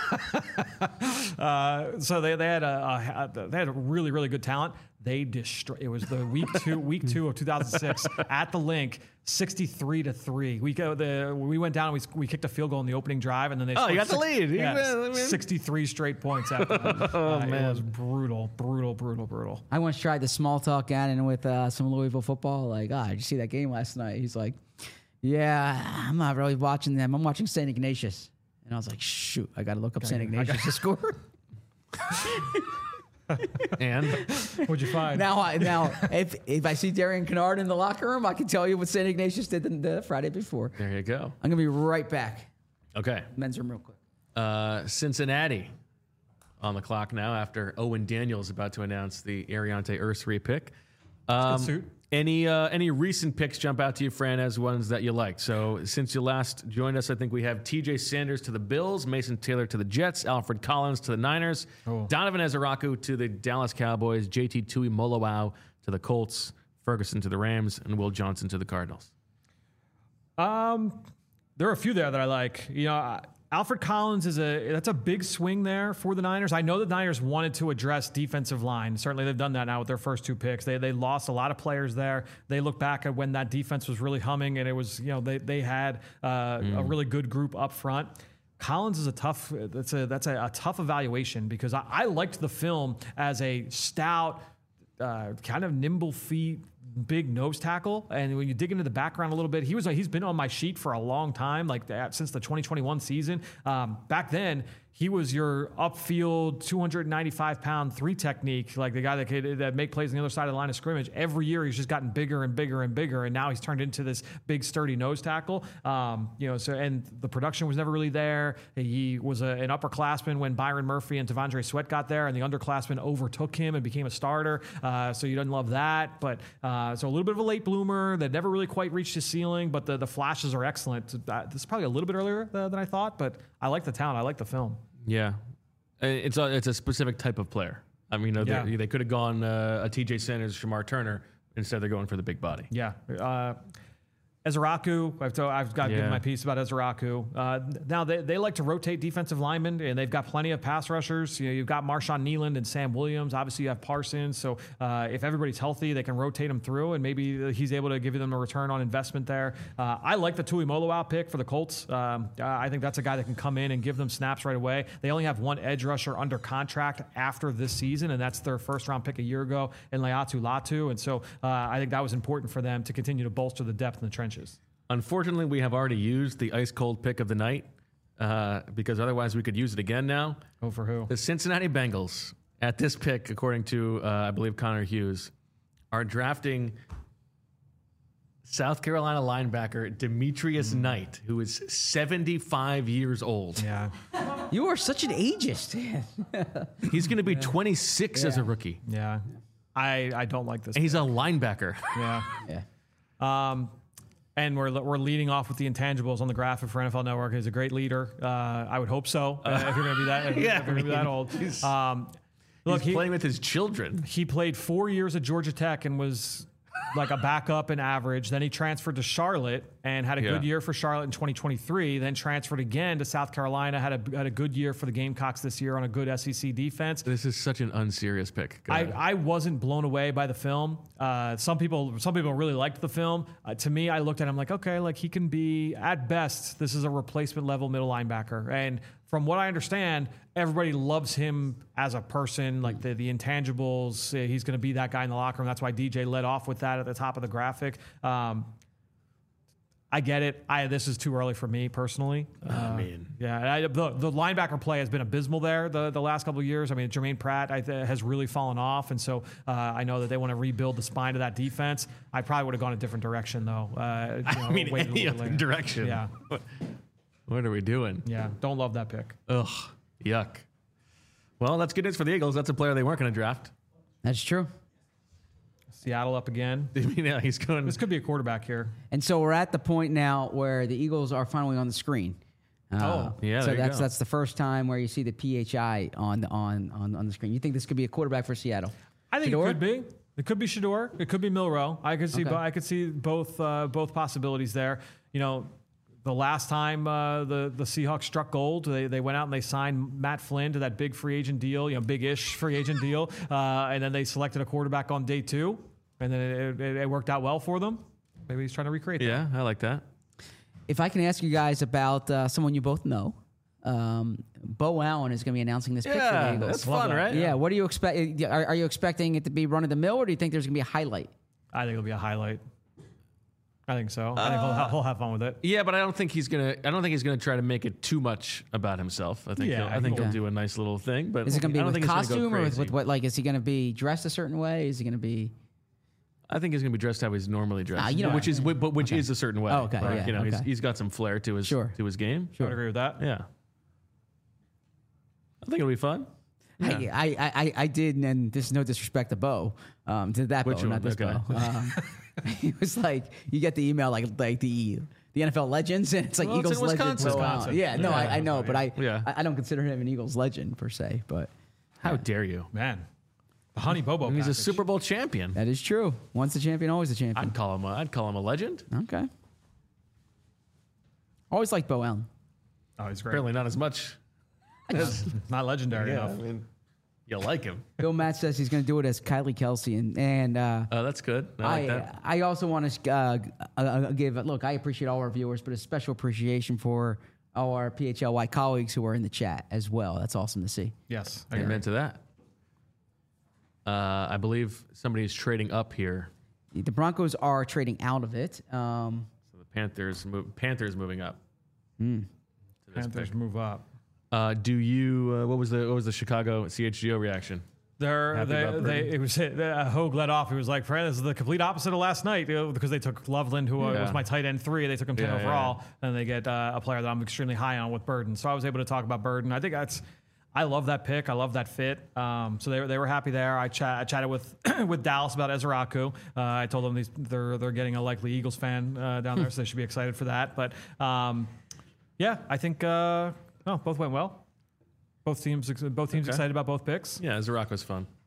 Uh, so they, they had a, a they had a really really good talent. They destroyed. It was the week two week two of two thousand six at the Link, sixty-three to three. We go the we went down and we we kicked a field goal in the opening drive, and then they Oh, you scored got the lead. You- Yeah, I mean- sixty-three straight points after that. Oh, Uh, man. it was brutal, brutal, brutal, brutal. I once tried the small talk Gannon with uh, some Louisville football. Like, ah, did you see that game last night? He's like, yeah, I'm not really watching them. I'm watching Saint Ignatius. And I was like, shoot, I got to look up Saint Ignatius to score. And What'd you find? Now, I, now, if if I see Darian Kennard in the locker room, I can tell you what Saint Ignatius did the, the Friday before. there you go. I'm gonna be right back. Okay. Men's room, real quick. Uh, Cincinnati on the clock now after Owen Daniels about to announce the Ariante Ursary pick. Um, suit. Any uh, any recent picks jump out to you, Fran, as ones that you liked? So since you last joined us, I think we have T J Sanders to the Bills, Mason Taylor to the Jets, Alfred Collins to the Niners, Oh. Donovan Ezeraku to the Dallas Cowboys, J T Tui Molowau to the Colts, Ferguson to the Rams, and Will Johnson to the Cardinals. Um, there are a few there that I like. You know, uh, Alfred Collins is a that's a big swing there for the Niners. I know the Niners wanted to address defensive line. Certainly, they've done that now with their first two picks. They they lost a lot of players there. They look back at when that defense was really humming, and it was you know they they had uh, a really good group up front. Collins is a tough. That's a that's a, a tough evaluation because I, I liked the film as a stout, uh, kind of nimble feet, big nose tackle. And when you dig into the background a little bit, he was he's been on my sheet for a long time, like that, since the twenty twenty-one season. Um, back then, he was your upfield two hundred ninety-five pound three technique, like the guy that could that make plays on the other side of the line of scrimmage. Every year, he's just gotten bigger and bigger and bigger, and now he's turned into this big sturdy nose tackle. Um, you know, so and the production was never really there. He was a, an upperclassman when Byron Murphy and Tavondre Sweat got there, and the underclassmen overtook him and became a starter. Uh, so you didn't love that, but uh, so a little bit of a late bloomer that never really quite reached his ceiling, but the the flashes are excellent. Uh, this is probably a little bit earlier uh, than I thought, but I like the talent. I like the film. Yeah, Uh, it's a it's a specific type of player. I mean, you know, Yeah. they, they could have gone uh, a T J Sanders, Shamar Turner. Instead, they're going for the big body. Yeah. Uh, Ezeraku, I've, told, I've got to Yeah. give my piece about Ezeraku. Uh, now, they, they like to rotate defensive linemen, and they've got plenty of pass rushers. You know, you've got Marshawn Nealand and Sam Williams. Obviously, you have Parsons. So uh, if everybody's healthy, they can rotate them through, and maybe he's able to give them a return on investment there. Uh, I like the Tui Moloau pick for the Colts. Um, I think that's a guy that can come in and give them snaps right away. They only have one edge rusher under contract after this season, and that's their first-round pick a year ago in Laiatu Latu. And so uh, I think that was important for them to continue to bolster the depth in the trenches. Unfortunately, we have already used the ice cold pick of the night uh, because otherwise we could use it again now. Oh, for who? The Cincinnati Bengals, at this pick, according to, uh, I believe, Connor Hughes, are drafting South Carolina linebacker Demetrius Hmm. Knight, who is seventy-five years old. Yeah. You are such an ageist. He's going to be twenty-six as a rookie. Yeah. I, I don't like this. And he's a linebacker. Yeah. yeah. Um, and we're we're leading off with the intangibles on the graphic for N F L Network. He's a great leader. Uh, I would hope so. Uh, if you're going to be that, if, Yeah, if you're going to be I that mean, old. he's- Um, look, He's he, playing with his children. he played four years at Georgia Tech and was like a backup and average. Then he transferred to Charlotte and had a Yeah. good year for Charlotte in twenty twenty-three. Then transferred again to South Carolina. Had a had a good year for the Gamecocks this year on a good S E C defense. This is such an unserious pick. Go I, ahead. I wasn't blown away by the film. Uh, some people some people really liked the film. Uh, to me, I looked at him like, okay, like he can be at best. This is a replacement level middle linebacker, and from what I understand, everybody loves him as a person. Like the the intangibles, uh, he's going to be that guy in the locker room. That's why D J led off with that at the top of the graphic. Um, I get it. I this is too early for me personally. Uh, I mean, yeah, and I, the, the linebacker play has been abysmal there the, the last couple of years. I mean, Jermaine Pratt I, th- has really fallen off, and so uh, I know that they want to rebuild the spine of that defense. I probably would have gone a different direction, though. Uh, you know, I mean, waited a any little bit other later. direction. Yeah, What, what are we doing? yeah. Don't love that pick. Ugh, yuck. Well, that's good news for the Eagles. That's a player they weren't going to draft. That's true. Seattle up again. I mean, yeah, he's going. This could be a quarterback here. And so we're at the point now where the Eagles are finally on the screen. Uh, Oh, yeah, So there you that's go. that's the first time where you see the P H I on the on on, on the screen. You think this could be a quarterback for Seattle? I think Shador? it could be. It could be Shador. It could be Milrow. I could see. Okay. bo- I could see both. Uh, both possibilities there. You know, the last time uh, the the Seahawks struck gold, they they went out and they signed Matt Flynn to that big free agent deal. You know, big-ish free agent deal, uh, and then they selected a quarterback on day two, and then it, it, it worked out well for them. Maybe he's trying to recreate that. Yeah, I like that. If I can ask you guys about uh, someone you both know, um, Bo Allen is going to be announcing this pick for the Yeah, Eagles. that's Love fun, that. right? Yeah. What do you expect? Are, are you expecting it to be run of the mill, or do you think there's going to be a highlight? I think it'll be a highlight. I think so. I think he'll, ha- he'll have fun with it. Yeah, but I don't think he's gonna. I don't think he's gonna try to make it too much about himself. I think. Yeah, he'll, I think he'll- he'll do a nice little thing. But Is it going to be I don't with think it's gonna costume go or with, crazy. with what? Like, is he going to be dressed a certain way? Is he going to be? I think he's gonna be dressed how he's normally dressed. Ah, you know- which is but which Okay. is a certain way. Oh, okay, right? yeah, You know, he's, okay. he's got some flair to his Sure. to his game. I would agree with that. Yeah. I think it'll be fun. Yeah. I, I, I, I did, and this is no disrespect to Bo, um, to that Which Bo, not one? this Okay. Bo. Um, he was like, you get the email like like the the N F L legends, and it's like Well, it's Eagles in legend. Wisconsin. Bo Allen. Wisconsin. Yeah, no, Yeah. I, I know, but I, Yeah. I I don't consider him an Eagles legend per se. But How dare you? Man, the Honey Bobo. And he's a package. Super Bowl champion. that is true. Once the champion, always the champion. I'd call him. A, I'd call him a legend. Okay. Always like Bo Allen. Oh, he's great. Apparently not as much. as, Not legendary yeah, I enough. mean, you like him. Bill Matt says he's going to do it as Kylie Kelsey, and and uh, Oh, that's good. I like I, that. I also want to uh, uh, uh, give look. I appreciate all our viewers, but a special appreciation for all our P H L Y colleagues who are in the chat as well. That's awesome to see. Yes. I agree. Amen to that. Uh, I believe somebody is trading up here. The Broncos are trading out of it. Um, So the Panthers move, Panthers moving up. Hmm. To this Panthers pick. move up. Uh, do you? Uh, what was the what was the Chicago C H G O reaction? They're, Happy they, about they, Burton? it was uh, Hogue led off. He was like, "Friend, this is the complete opposite of last night," you know, because they took Loveland, who uh, Yeah. was my tight end three. They took him ten Yeah, yeah, overall, and they get uh, a player that I'm extremely high on with Burden. So I was able to talk about Burden. I think that's. I love that pick. I love that fit. Um, so they were they were happy there. I, chat, I chatted with with Dallas about Ezeraku. Uh, I told them these, they're they're getting a likely Eagles fan uh, down there, so they should be excited for that. But um, yeah, I think uh, oh, both went well. Both teams both teams Okay. excited about both picks. Yeah, Zarako's fun.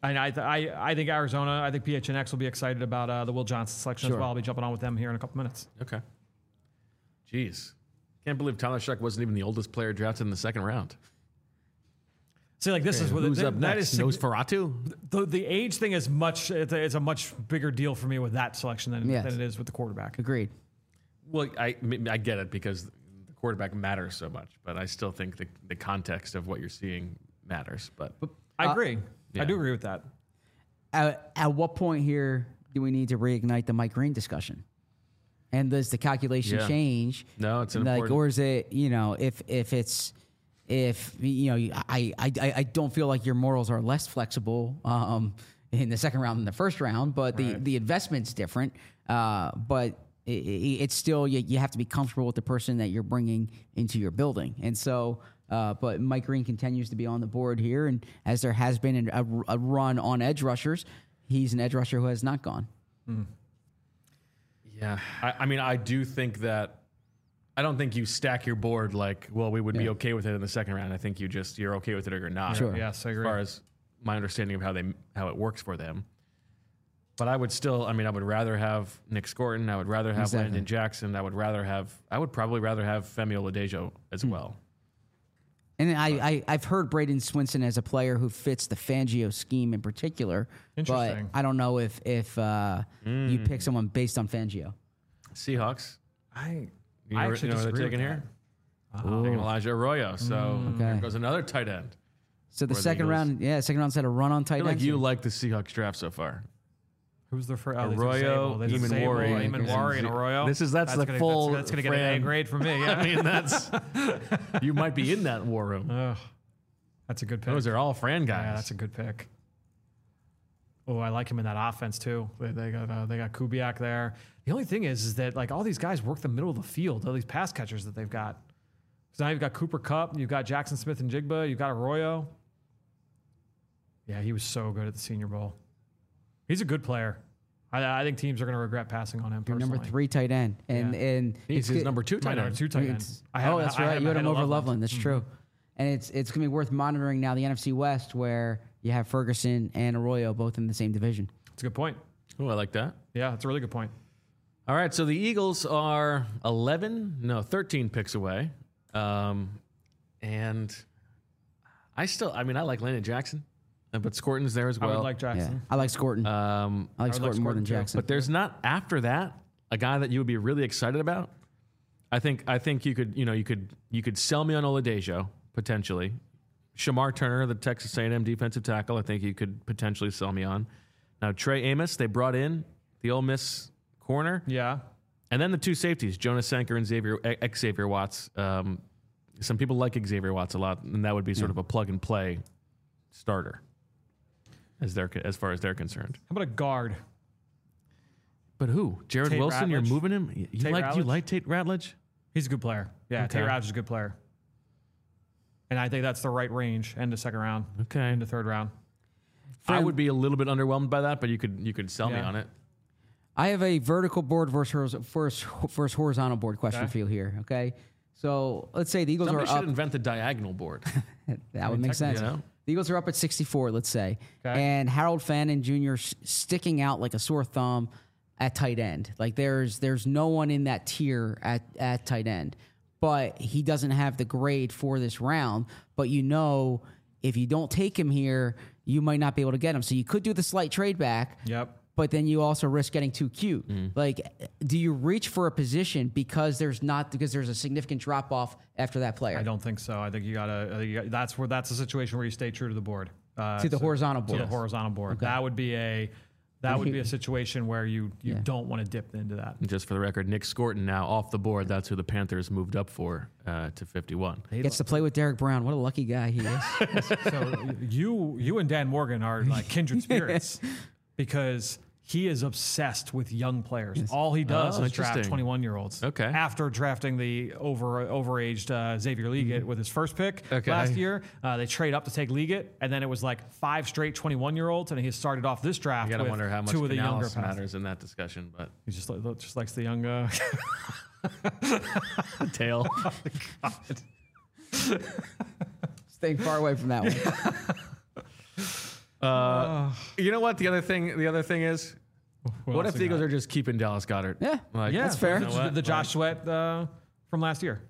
I, I, I I think Arizona, I think P H N X will be excited about uh, the Will Johnson selection Sure. as well. I'll be jumping on with them here in a couple minutes. Okay. Jeez. Can't believe Tyler Shuck wasn't even the oldest player drafted in the second round. See, like this is what Who's it, up that next? is Nosferatu? the, the age thing is much, it's a, it's a much bigger deal for me with that selection than, Yes. than it is with the quarterback. Agreed. Well, I, I get it because the quarterback matters so much, but I still think the, the context of what you're seeing matters. But I Uh, agree. yeah. I do agree with that. At, at what point here do we need to reignite the Mike Green discussion? And does the calculation Yeah. change? No, it's an like, important- or is it, you know, if if it's if you know, I I I I don't feel like your morals are less flexible um, in the second round than the first round, but the Right. the investment's different. Uh, but it, it, it's still you, you have to be comfortable with the person that you're bringing into your building, and so. Uh, but Mike Green continues to be on the board here, and as there has been a, a run on edge rushers, he's an edge rusher who has not gone. yeah, I, I mean, I do think that I don't think you stack your board like, well, we would be Yeah. okay with it in the second round. I think you just you're okay with it or you're not. Sure. Yes, I As agree. far as my understanding of how they how it works for them. But I would still, I mean, I would rather have Nick Scorton. I would rather have Exactly. Landon Jackson. I would rather have, I would probably rather have Femi Oladejo Hmm. as well. And I, I, I've heard Braden Swinson as a player who fits the Fangio scheme in particular. But Interesting. I don't know if if uh, you pick someone based on Fangio. Seahawks. I, You I know, actually you know what disagree they're taking with here? Taking Elijah Arroyo. So Mm. Okay. here goes another tight end. So the Or the second Eagles. round, yeah, second round's had a run on I tight feel like ends. you like the Seahawks draft so far. Who's the first? Oh, Arroyo, Eamon Eamon Wari, Eamon Wari, and Arroyo. This is- that's the gonna, full That's, that's going to get an Fran- A grade from me. Yeah. I mean, that's you might be in that war room. Ugh, that's a good pick. Those are all Fran guys. Yeah, that's a good pick. Oh, I like him in that offense too. They, they got uh, they got Kubiak there. The only thing is, is that like all these guys work the middle of the field. All these pass catchers that they've got. So now you've got Cooper Kupp, you've got Jackson Smith and Jigba, you've got Arroyo. Yeah, he was so good at the Senior Bowl. He's a good player. I, I think teams are going to regret passing on him. Your Personally. number three tight end, and Yeah. and He's it's his good- number two My tight number end. two tight end. It's- I had oh, him- that's I right. You had ahead him of over Loveland. Loveland. That's true. And it's it's gonna be worth monitoring now the N F C West, where you have Ferguson and Arroyo both in the same division. That's a good point. Oh, I like that. Yeah, that's a really good point. All right, so the Eagles are eleven, no, thirteen picks away. Um, and I still, I mean, I like Landon Jackson, uh, but Scorton's there as I well. would like Yeah, Jackson. I like Scorton. um, I like I would like Scorton more than Scorton, too. Jackson. but there's not, after that, a guy that you would be really excited about. I think, I think you could, you know, you could, you could sell me on Oladejo, potentially. Shamar Turner, the Texas A and M defensive tackle, I think you could potentially sell me on. Now, Trey Amos, they brought in the Ole Miss corner. Yeah. And then the two safeties, Jonas Sanker and Xavier, ex Xavier Watts. Um, some people like Xavier Watts a lot, and that would be sort of a plug and play starter, as they're as far as they're concerned. How about a guard? But who? Jared Tate Wilson? Ratledge. You're moving him? You, you Tate like? You Ratledge. like Tate Ratledge? He's a good player. Yeah, Okay. Tate Ratledge is a good player. And I think that's the right range, end of second round, Okay. into third round. I would be a little bit underwhelmed by that, but you could you could sell me Yeah. on it. I have a vertical board versus versus, versus horizontal board question Okay. for you here. Okay, so let's say the Eagles Somebody are should up. invent the diagonal board. That would make sense. you know? The Eagles are up at sixty-four, let's say, Okay. and Harold Fannin Junior s- sticking out like a sore thumb at tight end. Like there's there's no one in that tier at at tight end, but he doesn't have the grade for this round. But you know, if you don't take him here, you might not be able to get him. So you could do the slight trade back. Yep. But then you also risk getting too cute. Mm. Like, do you reach for a position because there's not because there's a significant drop off after that player I don't think so. I think you gotta. I think you got, that's where that's a situation where you stay true to the board. Uh, to the so- horizontal To board? the horizontal board. That would be a. That would be a situation where you you Yeah. don't want to dip into that. And just for the record, Nick Scorton now off the board. That's who the Panthers moved up for uh, to fifty-one. Gets to play with Derek Brown. What a lucky guy he is. So you you and Dan Morgan are like kindred spirits because he is obsessed with young players. All he does Oh, is draft interesting. twenty-one year olds. Okay. After drafting the over overaged uh, Xavier Liggett with his first pick Okay. last year, uh, they trade up to take Liggett, and then it was like five straight twenty-one year olds, and he started off this draft You got to with wonder how much two of the younger Canales passes. matters in that discussion, but He just li- just likes the young. Uh, tail. Staying far away from that one. Uh, you know what? The other thing, the other thing is, What, what else if the we Eagles got? are just keeping Dallas Goedert? Yeah, Like, Yeah, that's fair. you know The, what? the Josh Like- Sweat uh, from last year.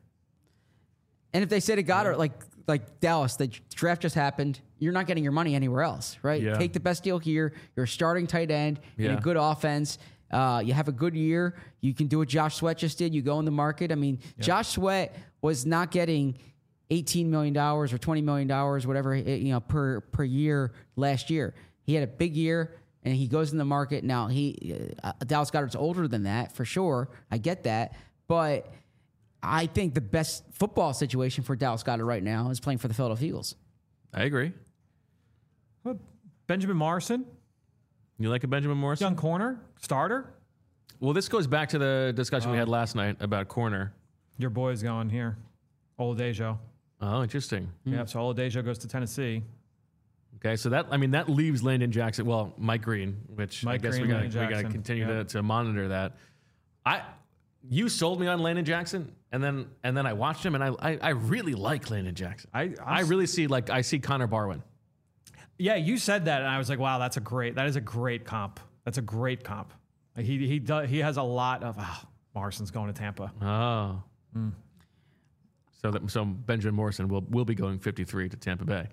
And if they say to Goddard, like like Dallas, the draft just happened, you're not getting your money anywhere else, right? Yeah. Take the best deal here. You're a starting tight end in Yeah. a good offense. Uh, you have a good year. You can do what Josh Sweat just did. You go in the market. I mean, Josh Sweat was not getting eighteen million dollars or twenty million dollars, whatever, you know, per per year last year. He had a big year, and he goes in the market. Now, he uh, Dallas Goedert's older than that, for sure. I get that. But I think the best football situation for Dallas Goedert right now is playing for the Philadelphia Eagles. I agree. What, Benjamin Morrison, You like a Benjamin Morrison? young corner, starter. Well, this goes back to the discussion we Oh. had last night about corner. Your boy's going here. Oladejo. Oh, interesting. Yeah, so Oladejo goes to Tennessee. Okay, so that I mean that leaves Landon Jackson. Well, Mike Green, which Mike I guess Green, we got Landon we got to Jackson. continue Yeah. to, to monitor that. I you sold me on Landon Jackson, and then and then I watched him, and I I, I really like Landon Jackson. I- I'm I s- really see like I see Connor Barwin. Yeah, you said that, and I was like, wow, that's a great, that is a great comp. That's a great comp. Like, He he does, he has a lot of, ah, Morrison's going to Tampa. Oh, Hmm. so that so Benjamin Morrison will will be going fifty-three to Tampa Bay.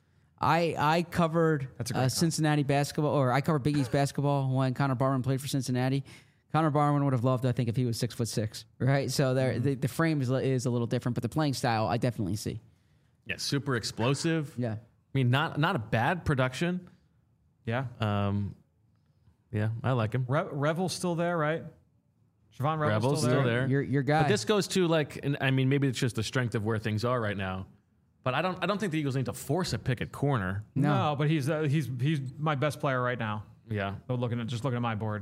I I covered That's a great uh, comp. Cincinnati basketball, or I covered Big East basketball when Connor Barwin played for Cincinnati. Connor Barwin would have loved, I think, if he was six foot six, right? So there, Mm-hmm. the, the frame is, is a little different, but the playing style I definitely see. Yeah, super explosive. Yeah. I mean, not not a bad production. Yeah. Um, yeah, I like him. Re- Revel's still there, right? Siobhan Revel's, Revel's still still there. there. Your your guy. But this goes to like, and I mean, maybe it's just the strength of where things are right now. But I don't, I don't think the Eagles need to force a pick at corner. No. No, but he's uh, he's he's my best player right now. Yeah, So looking at just looking at my board.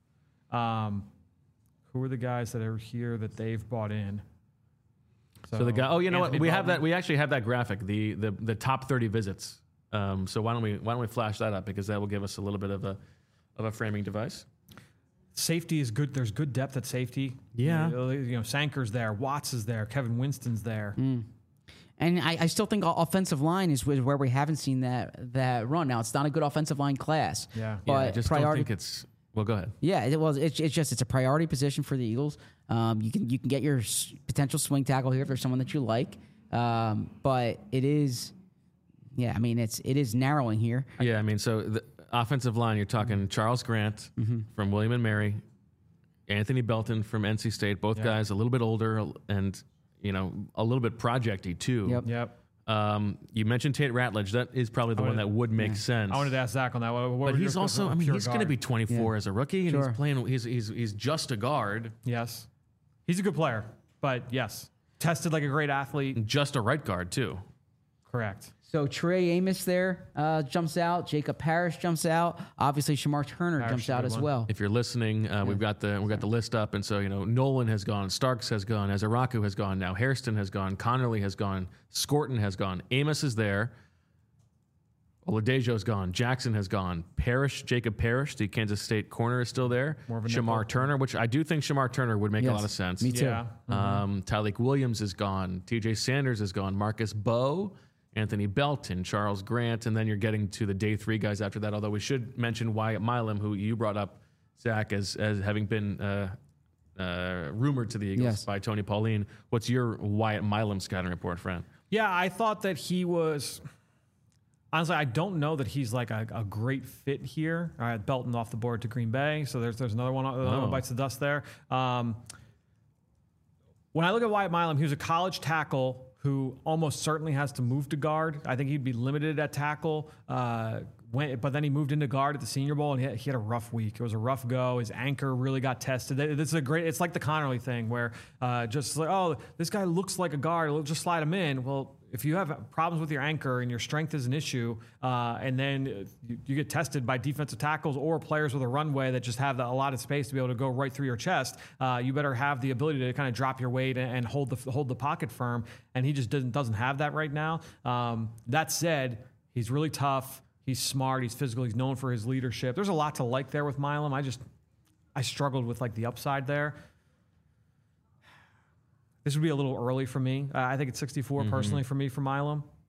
Um, who are the guys that are here that they've bought in? So, the guy. Oh, you know Anthony what? We have Belton. that. We actually have that graphic. The the the top thirty visits. Um, so why don't we why don't we flash that up, because that will give us a little bit of a of a framing device. Safety is good. There's good depth at safety. Yeah. You know, you know, Sanker's there. Watts is there. Kevin Winston's there. Mm. And I, I still think o- offensive line is wh- where we haven't seen that that run. Now it's not a good offensive line class. Yeah. But yeah, I just don't priority. think it's. Well, go ahead. Yeah, it was. It's, it's just it's a priority position for the Eagles. Um, you can you can get your s- potential swing tackle here if there's someone that you like, um, but it is, yeah. I mean, it's it is narrowing here. Yeah, I mean, so the offensive line, you're talking Charles Grant from William and Mary, Anthony Belton from N C State, both Yeah. guys a little bit older and, you know, a little bit projecty too. Yep. Yep. Um, you mentioned Tate Ratledge. That is probably the one wanted- that would make sense. I wanted to ask Zach on that. What, what but were he's your- also, I mean, pure he's going to guard? be twenty-four as a rookie, and Sure. he's playing. He's he's he's just a guard, Yes. He's a good player, but yes. Tested like a great athlete. just a right guard too. Correct. So Trey Amos there uh, jumps out. Jacob Parrish jumps out. Obviously, Shamar Turner Parrish jumps is a out good as one. well. If you're listening, uh, we've got the we've got the list up, and so you know Nolan has gone, Starks has gone, Azaraku has gone, now Hairston has gone, Connerly has gone, Scorton has gone, Amos is there, Oladejo's gone, Jackson has gone, Parrish, Jacob Parrish, the Kansas State corner is still there, More of a Shamar nickel. Turner, which I do think Shamar Turner would make a Yes, lot of sense. me too. Yeah. Um, Tyleek Williams is gone, T J Sanders is gone, Marcus Bowe, Anthony Belton, Charles Grant, and then you're getting to the day three guys after that. Although we should mention Wyatt Milam, who you brought up, Zach, as as having been uh, uh, rumored to the Eagles Yes. by Tony Pauline. What's your Wyatt Milam scouting report, friend? Yeah, I thought that he was. Honestly, I don't know that he's like a, a great fit here. All right, Belton off the board to Green Bay, so there's there's another one another one Oh. bites the dust there. Um, when I look at Wyatt Milam, he was a college tackle who almost certainly has to move to guard. I think he'd be limited at tackle. Uh, when, but then he moved into guard at the Senior Bowl, and he had, he had a rough week. It was a rough go. His anchor really got tested. This is a great. It's like the Connerly thing, where uh, just like, oh, this guy looks like a guard. We'll just slide him in. Well, if you have problems with your anchor and your strength is an issue, uh, and then you, you get tested by defensive tackles or players with a runway that just have the, a lot of space to be able to go right through your chest, uh, you better have the ability to kind of drop your weight and, and hold the hold the pocket firm. And he just doesn't doesn't have that right now. Um, that said, he's really tough. He's smart. He's physical. He's known for his leadership. There's a lot to like there with Milam. I just I struggled with like the upside there. This would be a little early for me. Uh, I think it's sixty-four Mm-hmm. personally for me for Milam.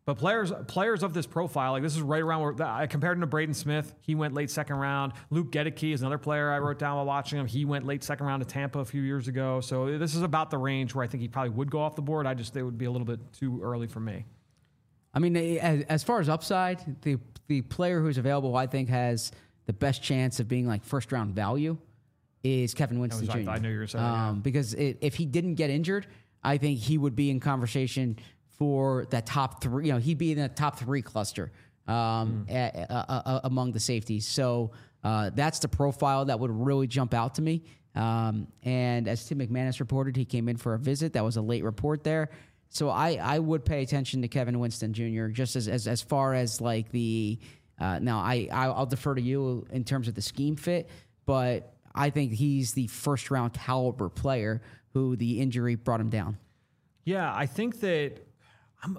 But players players of this profile, like this is right around where I compared him to Braden Smith. He went late second round. Luke Gedeke is another player I wrote down while watching him. He went late second round to Tampa a few years ago. So this is about the range where I think he probably would go off the board. I just, it would be a little bit too early for me. I mean, as, as far as upside, the the player who's available, I think, has the best chance of being like first round value is Kevin Winston I, was, Junior I, I knew you were saying um, yeah. Because it, if he didn't get injured, I think he would be in conversation for that top three. You know, he'd be in the top three cluster um, mm. a, a, a, among the safeties. So uh, that's the profile that would really jump out to me. Um, and as Tim McManus reported, he came in for a visit. That was a late report there. So I, I would pay attention to Kevin Winston Junior just as as, as far as like the uh, now I I'll defer to you in terms of the scheme fit, but I think he's the first round caliber player who the injury brought him down. Yeah, I think that I'm,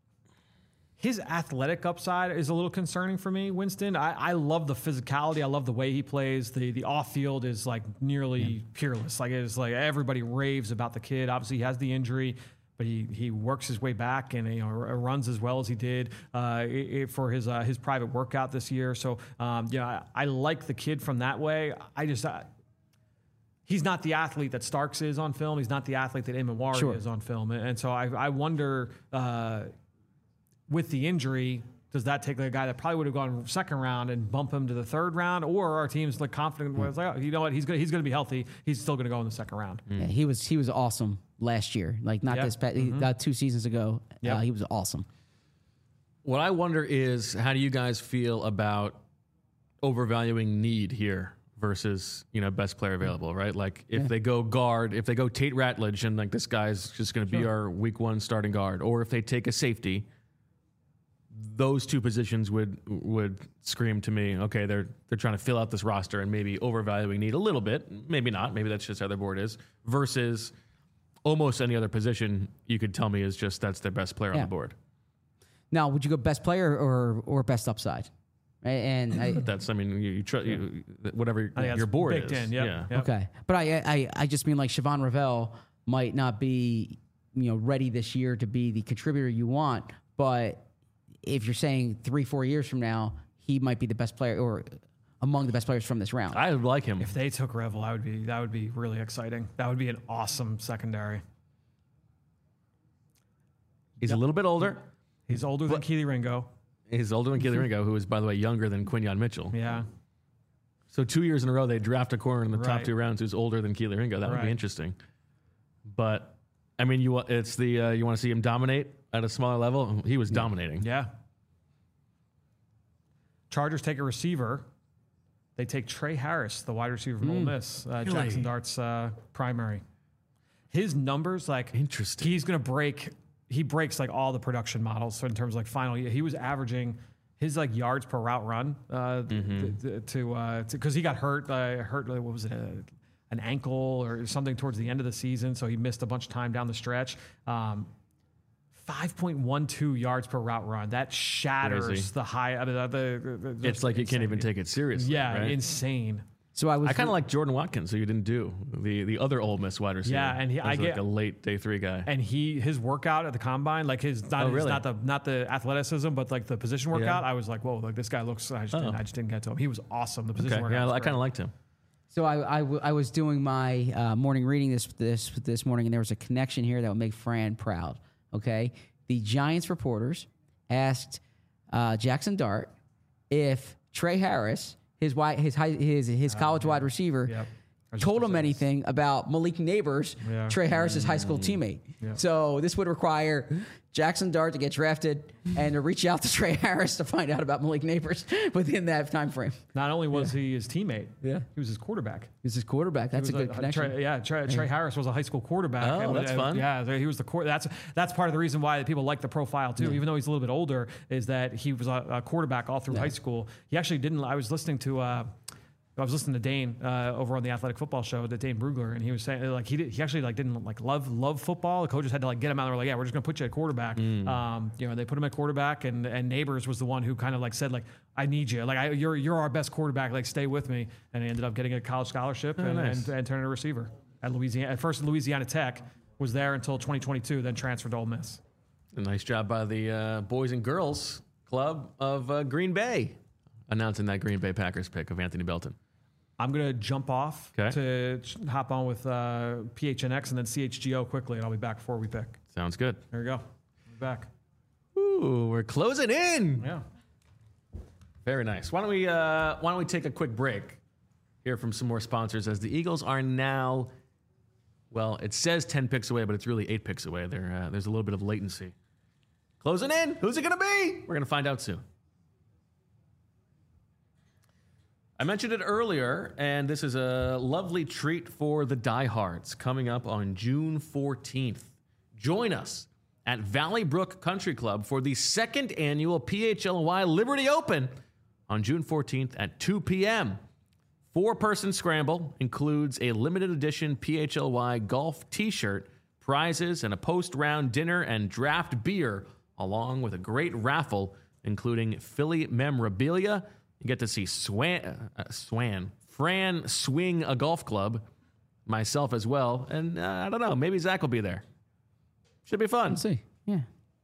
his athletic upside is a little concerning for me, Winston. I, I love the physicality. I love the way he plays. The the off field is like nearly yeah. peerless. Like it's like everybody raves about the kid. Obviously, he has the injury, but he, he works his way back and you know runs as well as he did uh, it, it, for his uh, his private workout this year. So um, you know I, I like the kid from that way. I just I, he's not the athlete that Starks is on film. He's not the athlete that Imawari sure. is on film. And, and so I I wonder uh, with the injury, does that take a guy that probably would have gone second round and bump him to the third round, or our team's like confident mm. where it's like, oh, you know what, he's gonna he's gonna be healthy. He's still gonna go in the second round. Mm. Yeah, he was he was awesome last year. Like not yep. this past, mm-hmm. uh, two seasons ago. Yep. Uh, he was awesome. What I wonder is, how do you guys feel about overvaluing need here versus you know best player available? Right, like if yeah. they go guard, if they go Tate Ratledge, and like this guy's just gonna be sure. our week one starting guard, or if they take a safety. Those two positions would would scream to me, okay, they're they're trying to fill out this roster and maybe overvaluing need a little bit, maybe not, maybe that's just how their board is, versus almost any other position you could tell me is just that's their best player yeah. on the board. Now, would you go best player or or best upside? Right? And I, that's, I mean, you, you, tr- you whatever your board is. In, yep. Yeah. Yep. Okay, but I, I I just mean like Siobhan Ravel might not be you know ready this year to be the contributor you want, but if you're saying three, four years from now, he might be the best player or among the best players from this round. I would like him. If they took Revel, I would be that would be really exciting. That would be an awesome secondary. He's yep. a little bit older. He's older than Keely Ringo. He's older than Keely Ringo, who is, by the way, younger than Quinyon Mitchell. Yeah. So two years in a row, they draft a corner in the right. top two rounds who's older than Keely Ringo. That right. would be interesting. But I mean, you it's the uh, you want to see him dominate at a smaller level. He was dominating. Yeah. Chargers take a receiver. They take Trey Harris, the wide receiver from mm. Ole Miss, uh, really? Jackson Dart's uh, primary. His numbers, like, interesting. He's going to break. He breaks like all the production models. So in terms of like final, he was averaging his like yards per route run uh, mm-hmm. th- to because uh, he got hurt. Uh, hurt. What was it? Uh, an ankle or something towards the end of the season, so he missed a bunch of time down the stretch. Um, five point one two yards per route run. That shatters Crazy. the high. I mean, the, the, the, it's like insane. You can't even take it seriously. Yeah, right? insane. So I was. I kind of like Jordan Watkins, who you didn't do the the other Ole Miss wide receiver. Yeah, and he, I like get a late day three guy. And he his workout at the combine, like his not, oh, his, really? not the not the athleticism, but like the position workout. Yeah. I was like, whoa, like this guy looks. I just oh. didn't, I just didn't get to him. He was awesome. The position okay. workout. Yeah, I kind of liked him. So I, I, w- I was doing my uh, morning reading this this this morning, and there was a connection here that would make Fran proud. Okay, the Giants reporters asked uh, Jackson Dart if Trey Harris, his wide, his high, his his college uh, yeah. wide receiver, Yep. told him anything about Malik Neighbors, yeah. Trey Harris's high school teammate. Yeah. So this would require Jackson Dart to get drafted and to reach out to Trey Harris to find out about Malik Neighbors within that time frame. Not only was yeah. he his teammate, yeah, he was his quarterback. He was his quarterback. That's a good a, connection. Trey, yeah, Trey, Trey Harris was a high school quarterback. Oh, and, that's and, fun. Yeah, he was the core. That's that's part of the reason why people like the profile too. Yeah. Even though he's a little bit older, is that he was a, a quarterback all through yeah. high school. He actually didn't. I was listening to. Uh, I was listening to Dane uh, over on the Athletic Football Show, to Dane Brugler, and he was saying like he did, he actually like didn't like love love football. The coaches had to like get him out. They were like, yeah, we're just gonna put you at quarterback. Mm. Um, you know, they put him at quarterback, and and Neighbors was the one who kind of like said like, I need you, like I, you're you're our best quarterback, like stay with me. And he ended up getting a college scholarship oh, and, nice. and and turning a receiver at Louisiana. At first, Louisiana Tech was there until twenty twenty-two, then transferred to Ole Miss. nice job by the uh, Boys and Girls Club of uh, Green Bay announcing that Green Bay Packers pick of Anthony Belton. I'm going to jump off Okay. to ch- hop on with uh, P H N X and then C H G O quickly, and I'll be back before we pick. Sounds good. There we go. I'll be back. Ooh, we're closing in. Yeah. Very nice. Why don't we uh, Why don't we take a quick break? Hear from some more sponsors as the Eagles are now. Well, it says ten picks away, but it's really eight picks away. There, uh, there's a little bit of latency. Closing in. Who's it going to be? We're going to find out soon. I mentioned it earlier, and this is a lovely treat for the diehards coming up on June fourteenth. Join us at Valley Brook Country Club for the second annual P H L Y Liberty Open on June fourteenth at two p.m. Four-person scramble includes a limited edition P H L Y golf t-shirt, prizes, and a post-round dinner and draft beer, along with a great raffle, including Philly memorabilia. You get to see Swan, uh, Swan, Fran swing a golf club, myself as well, and uh, I don't know, maybe Zach will be there. Should be fun. Let's see. Yeah.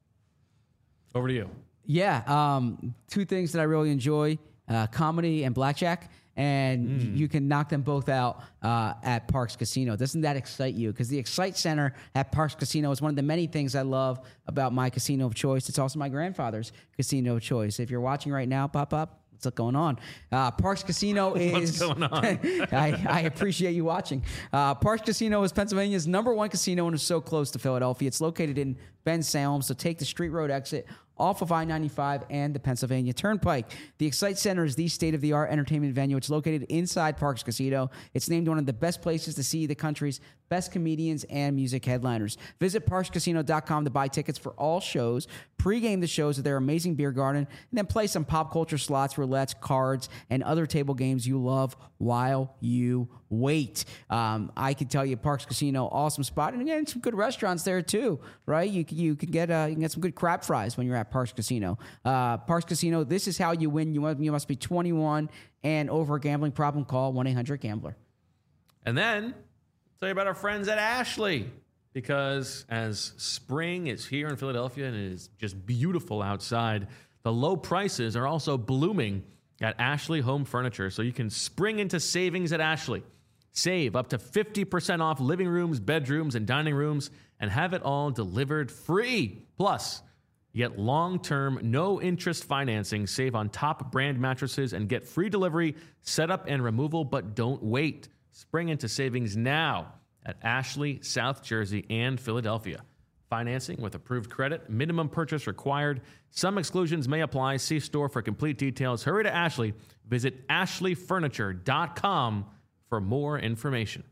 Over to you. Yeah. Um, two things that I really enjoy, uh, comedy and blackjack. And mm. you can knock them both out uh, at Parx Casino. Doesn't that excite you? Because the Excite Center at Parx Casino is one of the many things I love about my casino of choice. It's also my grandfather's casino of choice. If you're watching right now, pop up. What's going on? Uh, Parx Casino is... What's going on? I, I appreciate you watching. Uh, Parx Casino is Pennsylvania's number one casino and is so close to Philadelphia. It's located in Bensalem, so take the Street Road exit off of I ninety-five and the Pennsylvania Turnpike. The Excite Center is the state-of-the-art entertainment venue. It's located inside Parx Casino. It's named one of the best places to see the country's best comedians and music headliners. Visit parx casino dot com to buy tickets for all shows, pregame the shows at their amazing beer garden, and then play some pop culture slots, roulettes, cards, and other table games you love while you wait. Um, I can tell you, Parx Casino, awesome spot, and again, some good restaurants there too, right? You can, you can get uh, you can get some good crab fries when you're at Parx Casino. Uh, Parx Casino, this is how you win. You must, you must be twenty-one and over. A gambling problem, call one eight hundred gambler. And then tell you about our friends at Ashley, because as spring is here in Philadelphia and it is just beautiful outside, the low prices are also blooming at Ashley Home Furniture. So you can spring into savings at Ashley. Save up to fifty percent off living rooms, bedrooms, and dining rooms, and have it all delivered free. Plus, you get long-term, no-interest financing, save on top brand mattresses, and get free delivery, setup, and removal, but don't wait. Spring into savings now at Ashley, South Jersey, and Philadelphia. Financing with approved credit, minimum purchase required. Some exclusions may apply. See store for complete details. Hurry to Ashley. Visit ashley furniture dot com for more information.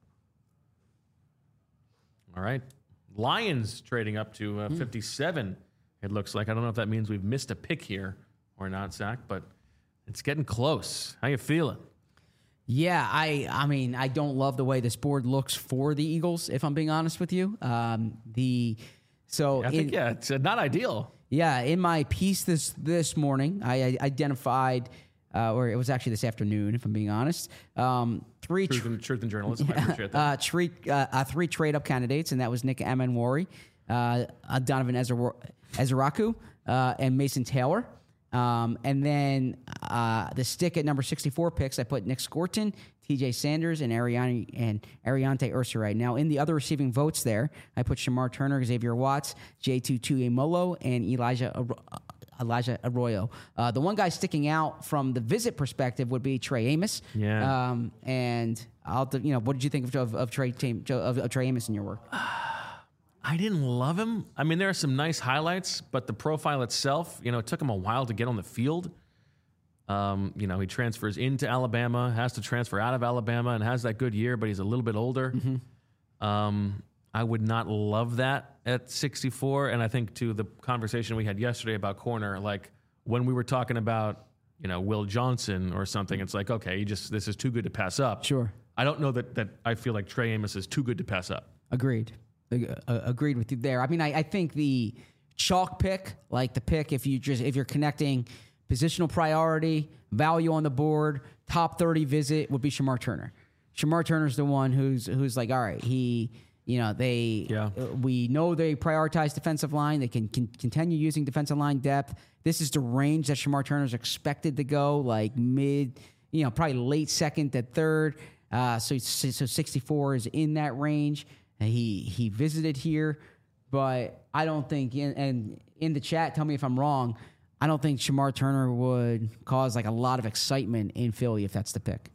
All right. Lions trading up to uh, fifty-seven, it looks like. I don't know if that means we've missed a pick here or not, Zach, but it's getting close. How you feeling? Yeah, I I mean, I don't love the way this board looks for the Eagles, if I'm being honest with you. Um, the so I think, in, yeah, it's uh, not ideal. Yeah, in my piece this this morning, I, I identified, uh, or it was actually this afternoon, if I'm being honest, um, three Truth, tr- and, truth and journalism. I appreciate that. uh, three uh, uh, three trade up candidates, and that was Nick Amenwari, uh, uh, Donovan Ezra- Ezraku, uh, and Mason Taylor. Um, and then uh, the stick at number sixty-four picks, I put Nick Scorton, T J Sanders, and Ariane and Ariante Ursaray. Now, in the other receiving votes there, I put Shamar Turner, Xavier Watts, J two Tuimolo, and Elijah Ar- Elijah Arroyo. Uh, the one guy sticking out from the visit perspective would be Trey Amos. Yeah. Um, and I'll, you know, what did you think of of, of Trey of, of Trey Amos in your work? I didn't love him. I mean, there are some nice highlights, but the profile itself, you know, it took him a while to get on the field. Um, you know, he transfers into Alabama, has to transfer out of Alabama, and has that good year, but he's a little bit older. Mm-hmm. Um, I would not love that at sixty-four. And I think to the conversation we had yesterday about corner, like when we were talking about, you know, Will Johnson or something, it's like, okay, you just this is too good to pass up. Sure. I don't know that that I feel like Trey Amos is too good to pass up. Agreed. Uh, agreed with you there. I mean, I, I think the chalk pick, like the pick, if you just if you're connecting positional priority, value on the board, top thirty visit, would be Shamar Turner. Shamar Turner's the one who's who's like, all right, he You know, they Yeah. uh, we know they prioritize defensive line. They can, can continue using defensive line depth. This is the range that Shamar Turner's expected to go, like mid, you know, probably late second to third. Uh, so so sixty-four is in that range. And he he visited here, but I don't think in, and in the chat, tell me if I'm wrong. I don't think Shamar Turner would cause like a lot of excitement in Philly if that's the pick.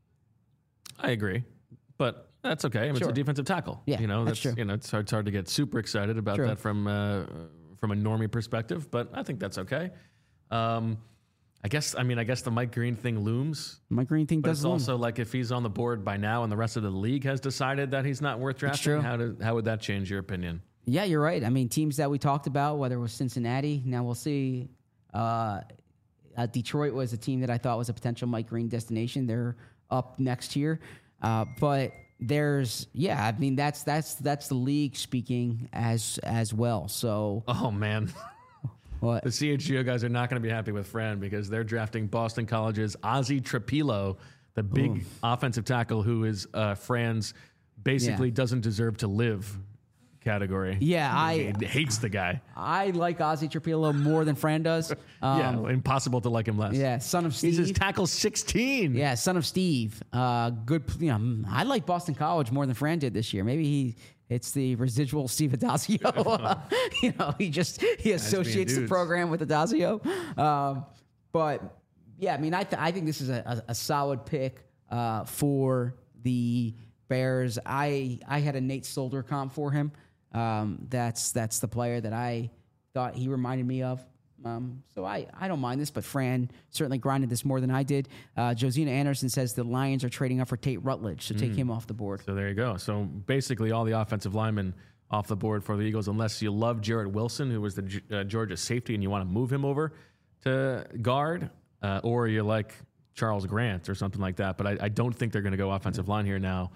I agree, but that's okay. I mean, Sure. It's a defensive tackle. Yeah, you know, that's true. You know, it's hard, it's hard to get super excited about True. that from uh, from a normie perspective, but I think that's okay. Um, I guess. I mean, I guess the Mike Green thing looms. Mike Green thing But does it's loom. also like if he's on the board by now and the rest of the league has decided that he's not worth drafting, true. how do, how would that change your opinion? Yeah, you're right. I mean, teams that we talked about, whether it was Cincinnati, now we'll see. Uh, uh, Detroit was a team that I thought was a potential Mike Green destination. They're up next year, uh, but there's yeah. I mean, that's that's that's the league speaking as as well. So Oh man, what? the C H G O guys are not going to be happy with Fran because they're drafting Boston College's Ozzie Trapilo, the big Ooh. offensive tackle who is uh, Fran's basically Yeah. doesn't deserve to live category. Yeah, I He hates the guy. I like Ozzie Trapilo more than Fran does. Um, yeah, impossible to like him less. yeah, son of Steve. He's his tackle sixteen. Yeah, son of Steve. Uh, good. You know, I like Boston College more than Fran did this year. Maybe he. It's the residual Steve Adazio. you know, he just he associates the dudes. program with Adazio. Um, but yeah, I mean, I th- I think this is a, a, a solid pick uh, for the Bears. I I had a Nate Solder comp for him. Um, that's that's the player that I thought he reminded me of. Um, so I, I don't mind this, but Fran certainly grinded this more than I did. Uh, Josina Anderson says the Lions are trading up for Tate Rutledge, so take him off the board. So there you go. So basically, all the offensive linemen off the board for the Eagles, unless you love Jarrett Wilson, who was the G- uh, Georgia safety, and you want to move him over to guard, uh, or you like Charles Grant or something like that. But I, I don't think they're going to go offensive line here now.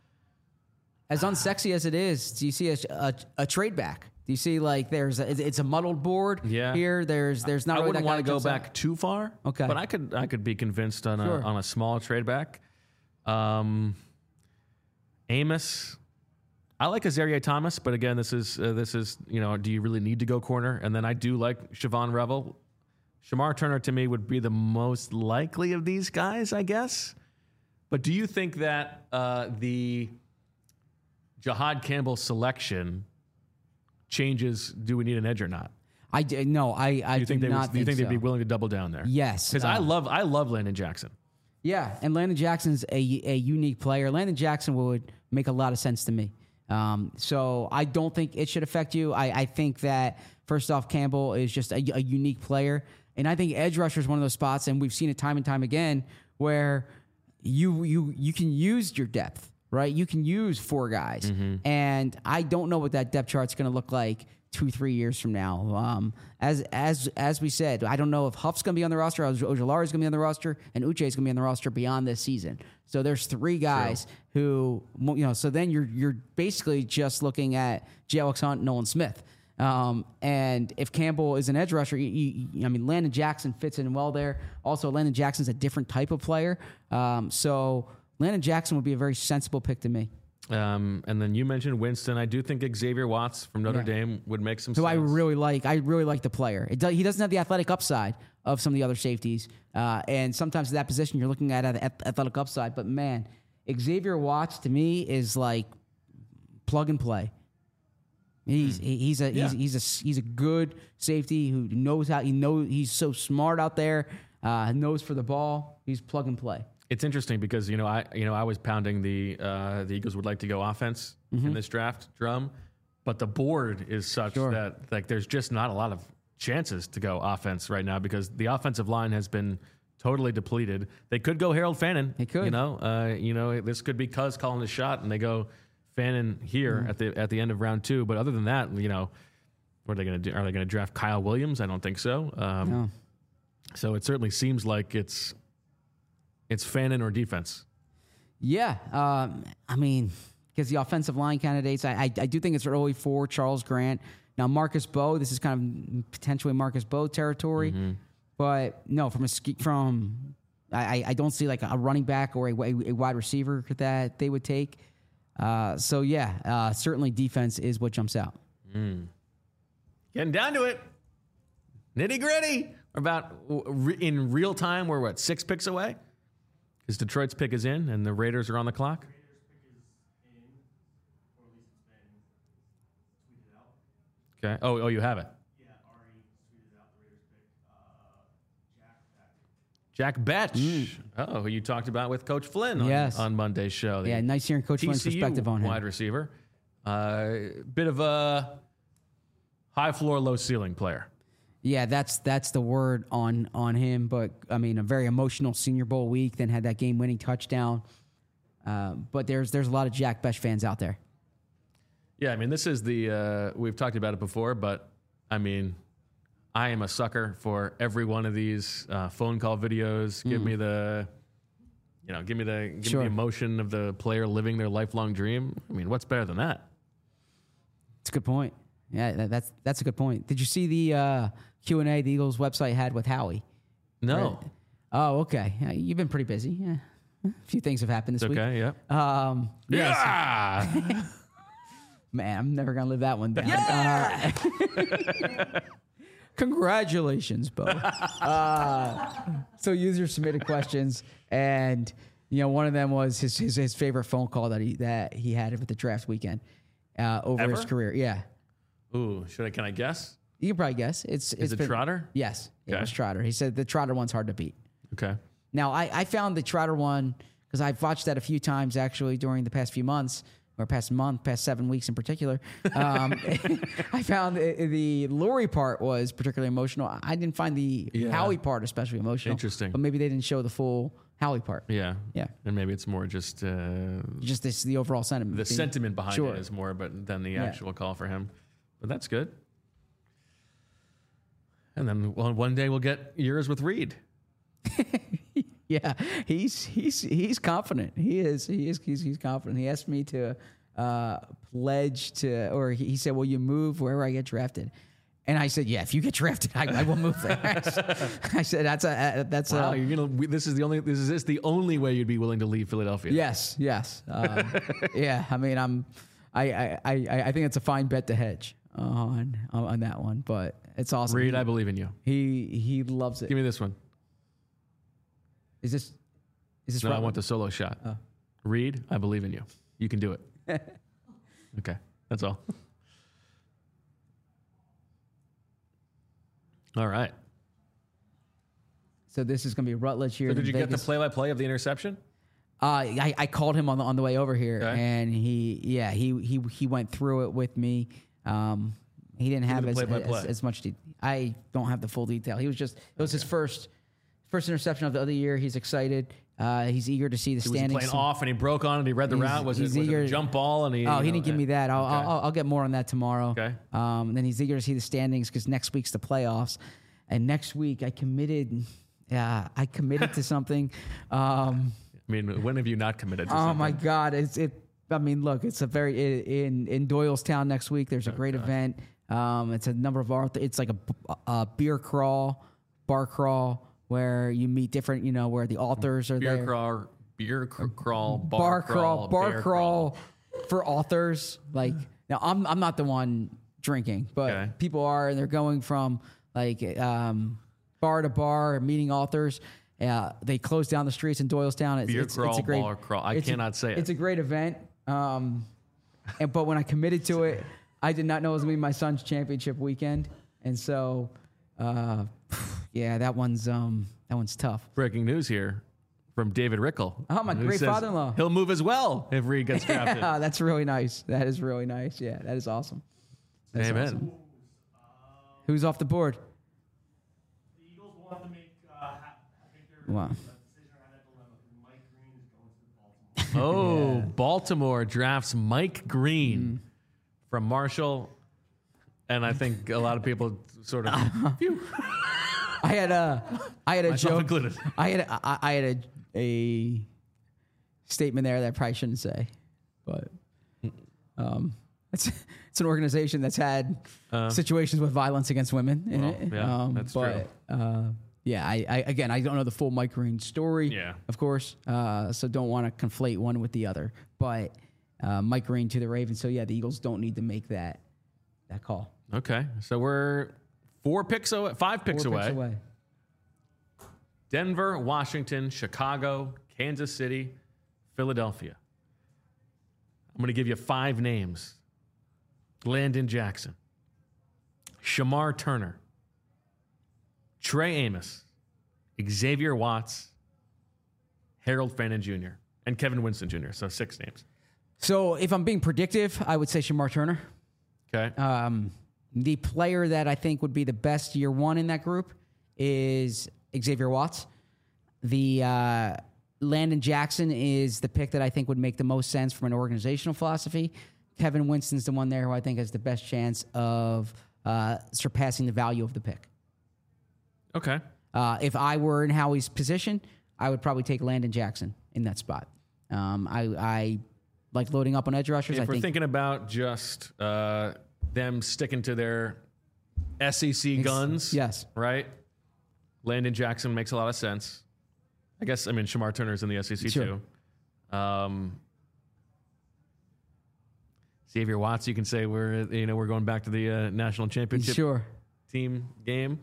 As unsexy as it is, do you see a, a, a trade back? Do you see like there's a, it's a muddled board Yeah. here? There's there's not. I really wouldn't that guy want to that go jumps back out. too far. Okay. But I could I could be convinced on a Sure. on a small trade back. Um, Amos, I like Azaria Thomas, but again, this is uh, this is you know, do you really need to go corner? And then I do like Siobhan Revel. Shamar Turner to me would be the most likely of these guys, I guess. But do you think that uh, the Jahad Campbell selection changes? Do we need an edge or not? I d- no, I I Do you think do they not would, do you think so. they'd be willing to double down there? Yes, Because I uh, love I love Landon Jackson. Yeah, and Landon Jackson's a, a unique player. Landon Jackson would make a lot of sense to me. Um, so I don't think it should affect you. I, I think that, first off, Campbell is just a, a unique player. And I think edge rusher is one of those spots, and we've seen it time and time again, where you you you can use your depth, right? You can use four guys. Mm-hmm. And I don't know what that depth chart's going to look like two, three years from now. Um, as as as we said, I don't know if Huff's going to be on the roster, Ojulari is going to be on the roster, and Uche is going to be on the roster beyond this season. So there's three guys who, you know, so then you're you're basically just looking at J. Alex Hunt, Nolan Smith. Um, and if Campbell is an edge rusher, you, you, I mean, Landon Jackson fits in well there. Also, Landon Jackson's a different type of player. Um, so Landon Jackson would be a very sensible pick to me. Um, and then you mentioned Winston. I do think Xavier Watts from Notre Yeah. Dame would make some Who sense. I really like. I really like the player. It does, he doesn't have the athletic upside of some of the other safeties. Uh, and sometimes at that position, you're looking at an athletic upside. But, man, Xavier Watts, to me, is like plug and play. He's he- he's a Yeah. he's he's a he's a good safety who knows how he know he's so smart out there. Uh, knows for the ball. He's plug and play. It's interesting because you know I you know I was pounding the uh, the Eagles would like to go offense in this draft drum, but the board is such Sure. that like there's just not a lot of chances to go offense right now because the offensive line has been totally depleted. They could go Harold Fannin. They could. You know, uh, you know this could be Cuz calling the shot, and they go Fannin here at the at the end of round two. But other than that, you know, what are they going to do? Are they going to draft Kyle Williams? I don't think so. Um, No. So it certainly seems like it's it's Fannin or defense. Yeah, um, I mean, because the offensive line candidates, I, I I do think it's early for Charles Grant. Now Marcus Bowe, this is kind of potentially Marcus Bowe territory, but no, from a ski, from I, I don't see like a running back or a, a wide receiver that they would take. Uh, so, yeah, uh, certainly defense is what jumps out. Mm. Getting down to it. Nitty gritty. About in real time, we're what, six picks away? Because Detroit's pick is in and the Raiders are on the clock? Raiders pick is in, or at least it's been tweeted out. Okay. Oh, oh, you have it. Yeah, Ari tweeted out the Raiders pick. Uh, Jack Betch. Jack Betch. Mm. Oh, who you talked about with Coach Flynn on, yes. on Monday's show. Yeah, nice hearing Coach Flynn's perspective on him. Wide receiver. Uh, bit of a high floor, low ceiling player. Yeah, that's that's the word on on him. But, I mean, a very emotional Senior Bowl week, then had that game-winning touchdown. Uh, but there's there's a lot of Jack Betch fans out there. Yeah, I mean, this is the, uh, we've talked about it before, but, I mean, I am a sucker for every one of these uh, phone call videos. Give mm. me the, you know, give me the give sure. me the emotion of the player living their lifelong dream. I mean, what's better than that? It's a good point. Yeah, that, that's that's a good point. Did you see the uh, Q and A the Eagles website had with Howie? No. Right? Oh, okay. Yeah, you've been pretty busy. Yeah. A few things have happened this it's week. Okay, yeah. Um, yeah. yeah. Man, I'm never going to live that one down. Yeah! Uh, congratulations, Bo. Uh, so users submitted questions, and you know one of them was his his, his favorite phone call that he that he had with the draft weekend uh, over Ever? his career. Yeah. Ooh, should I? Can I guess? You can probably guess. It's Is it's it been, Trotter? Yes, okay. It was Trotter. He said the Trotter one's hard to beat. Okay. Now I, I found the Trotter one because I've watched that a few times actually during the past few months. Or past month, past seven weeks in particular, um, I found the, the Lurie part was particularly emotional. I didn't find the yeah. Howie part especially emotional. Interesting. But maybe they didn't show the full Howie part. Yeah. Yeah. And maybe it's more just... Uh, just this, the overall sentiment. The thing. sentiment behind sure. it is more but than the yeah. actual call for him. But that's good. And then well, one day we'll get yours with Reed. Yeah, he's he's he's confident. He is he is he's, he's confident. He asked me to uh, pledge to, or he, he said, "Will you move wherever I get drafted?" And I said, "Yeah, if you get drafted, I, I will move there." I said, "That's a that's wow, a." You're gonna. This is the only. This is this the only way you'd be willing to leave Philadelphia. Yes, yes, um, yeah. I mean, I'm. I, I I I think it's a fine bet to hedge on on that one, but it's awesome. Reed, he, I believe in you. He he loves it. Give me this one. Is this? Is this? No, right I want the solo shot. Oh. Reed, I believe in you. You can do it. Okay, that's all. All right. So this is going to be Rutledge here. So did you Vegas. get the play-by-play of the interception? Uh, I, I called him on the on the way over here, okay. and he yeah he he he went through it with me. Um, he didn't have as, as as much. De- I don't have the full detail. He was just it was okay. his first first interception of the other year. He's excited. Uh, he's eager to see the he standings. Was playing off and he broke on and he read the he's, route. Was, it, was eager, it a jump ball? And he, oh, he know, didn't give me that. I'll, okay. I'll I'll get more on that tomorrow. Okay. Um, and then he's eager to see the standings because next week's the playoffs, and next week I committed. Yeah, I committed to something. Um, I mean, when have you not committed to oh something? my God! It's it. I mean, look, it's a very in in Doylestown next week. There's a oh, great gosh. event. Um, it's a number of art. It's like a, a beer crawl, bar crawl, where you meet different. You know, where the authors are beer there. Crawl, beer cr- crawl, bar, bar crawl, crawl, bar bear crawl, crawl for authors. Like now, I'm I'm not the one drinking, but okay. people are, and they're going from like um, bar to bar, meeting authors. Yeah, they close down the streets in Doylestown. It's, beer it's, crawl, it's a great, bar crawl. I cannot a, say it. It's a great event. Um, and but when I committed to it, I did not know it was gonna be my son's championship weekend, and so uh, yeah, that one's um, that one's tough. Breaking news here from David Rickle. Oh, my great father-in-law. He'll move as well if Reed gets drafted. Yeah, that's really nice. That is really nice. Yeah, that is awesome. That's Amen. Awesome. Who's off the board? The Eagles want to make. Uh, I think they're Wow. decision around that dilemma because Mike Green is going to Baltimore. Oh, Yeah. Baltimore drafts Mike Green mm. from Marshall, and I think a lot of people sort of. I had a, I had a Myself joke. included. I had, a, I, I had a, a statement there that I probably shouldn't say, but um, it's it's an organization that's had uh, situations with violence against women in well, it. Yeah, um, that's but, true. Uh, yeah, I, I again, I don't know the full Mike Green story. Yeah. Of course. Uh, so don't want to conflate one with the other, but uh, Mike Green to the Ravens. So, yeah, the Eagles don't need to make that that call. Okay, so we're four picks away, five picks, Four away. picks away. Denver, Washington, Chicago, Kansas City, Philadelphia. I'm going to give you five names. Landon Jackson, Shamar Turner, Trey Amos, Xavier Watts, Harold Fannin Junior, and Kevin Winston Junior So six names. So if I'm being predictive, I would say Shamar Turner. Okay. Um, the player that I think would be the best year one in that group is Xavier Watts. The uh, Landon Jackson is the pick that I think would make the most sense from an organizational philosophy. Kevin Winston's the one there who I think has the best chance of uh, surpassing the value of the pick. Okay. Uh, if I were in Howie's position, I would probably take Landon Jackson in that spot. Um, I, I like loading up on edge rushers. If I we're think thinking about just uh, them sticking to their S E C guns, yes. right? Landon Jackson makes a lot of sense. I guess, I mean, Shamar Turner's in the S E C Sure. too. Um, Xavier Watts, you can say we're, you know, we're going back to the uh, national championship Sure. team game.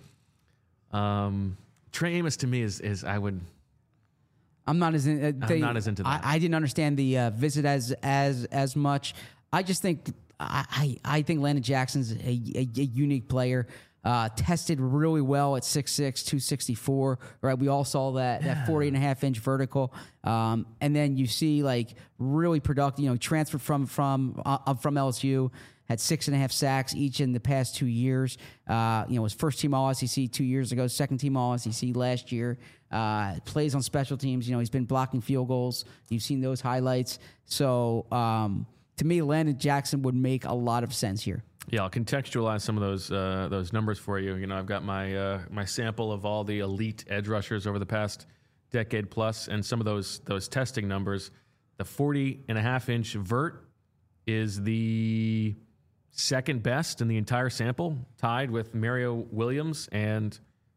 Um, Trey Amos to me is, is I would, I'm not as in, uh, they, not as into that. I, I didn't understand the uh, visit as as as much. I just think I I, I think Landon Jackson's a, a, a unique player. Uh, tested really well at six six, two sixty-four. Right, we all saw that yeah. that forty and a half inch vertical. Um, and then you see like really productive. You know, transferred from from uh, from L S U. Had six and a half sacks each in the past two years. Uh, you know, was first team All S E C two years ago, second team All S E C last year. Uh, plays on special teams. You know, he's been blocking field goals. You've seen those highlights. So um, to me, Landon Jackson would make a lot of sense here. Yeah, I'll contextualize some of those uh, those numbers for you. You know, I've got my uh, my sample of all the elite edge rushers over the past decade plus, and some of those those testing numbers. The forty and a half inch vert is the second best in the entire sample, tied with Mario Williams and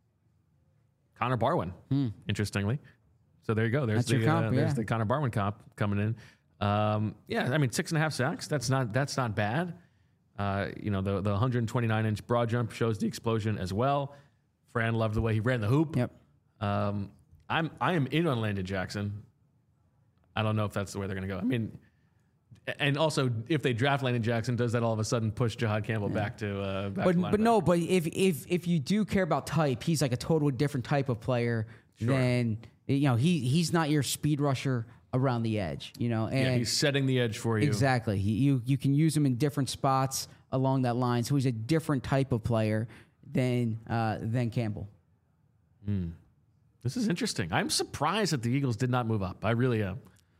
Connor Barwin, hmm. interestingly. So there you go. There's that's the comp, uh, yeah. there's the Connor Barwin comp coming in. Um, yeah, I mean six and a half sacks. That's not that's not bad. Uh, you know, the the one twenty-nine inch broad jump shows the explosion as well. Fran loved the way he ran the hoop. Yep. Um, I'm I am in on Landon Jackson. I don't know if that's the way they're going to go. I mean, and also if they draft Landon Jackson, does that all of a sudden push Jahad Campbell yeah. back to uh, back but to but no, but if if if you do care about type, he's like a totally different type of player sure. than you know. He he's not your speed rusher around the edge, you know. And yeah, he's setting the edge for you. Exactly. He, you you can use him in different spots along that line. So he's a different type of player than uh, than Campbell. Mm. This is interesting. I'm surprised that the Eagles did not move up. I really am.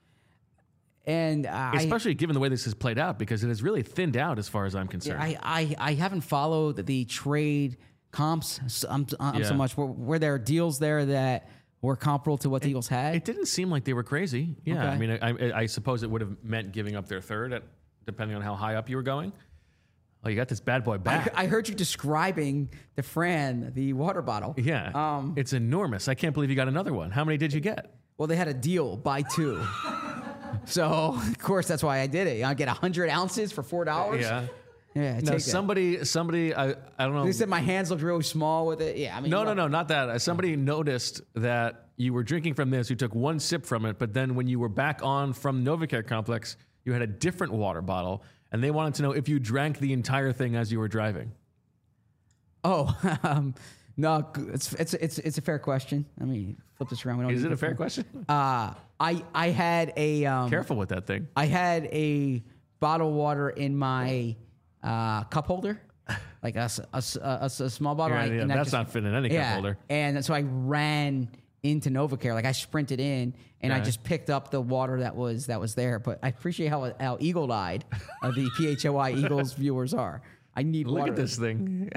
And uh, especially I, given the way this has played out, because it has really thinned out as far as I'm concerned. I I, I haven't followed the trade comps so, um, um, yeah. so much. Were, were there deals there that were comparable to what the it, Eagles had? It didn't seem like they were crazy. Yeah, okay. I mean, I, I, I suppose it would have meant giving up their third, at, depending on how high up you were going. Oh, you got this bad boy back. I, I heard you describing the Fran, the water bottle. Yeah, um, it's enormous. I can't believe you got another one. How many did you get? Well, they had a deal, buy two. So, of course, that's why I did it. I get one hundred ounces for four dollars. Yeah. Yeah, no, take somebody, that. somebody, I, I don't know. They said my hands looked really small with it. Yeah, I mean, no, look. no, no, not that. Somebody noticed that you were drinking from this. You took one sip from it, but then when you were back on from Novacare Complex, you had a different water bottle, and they wanted to know if you drank the entire thing as you were driving. Oh, um, no, it's it's it's it's a fair question. I mean, flip this around. We don't Is it a fair fun. question? Uh, I I had a um, careful with that thing. I had a bottle of water in my uh, cup holder, like a, a, a, a small bottle. Yeah, I, yeah, and that's just, not fitting in any yeah, cup holder. And so I ran into Novacare, like I sprinted in, and yeah. I just picked up the water that was that was there. But I appreciate how how eagle-eyed uh, the P H O I Eagles viewers are. I need Look water. at this thing.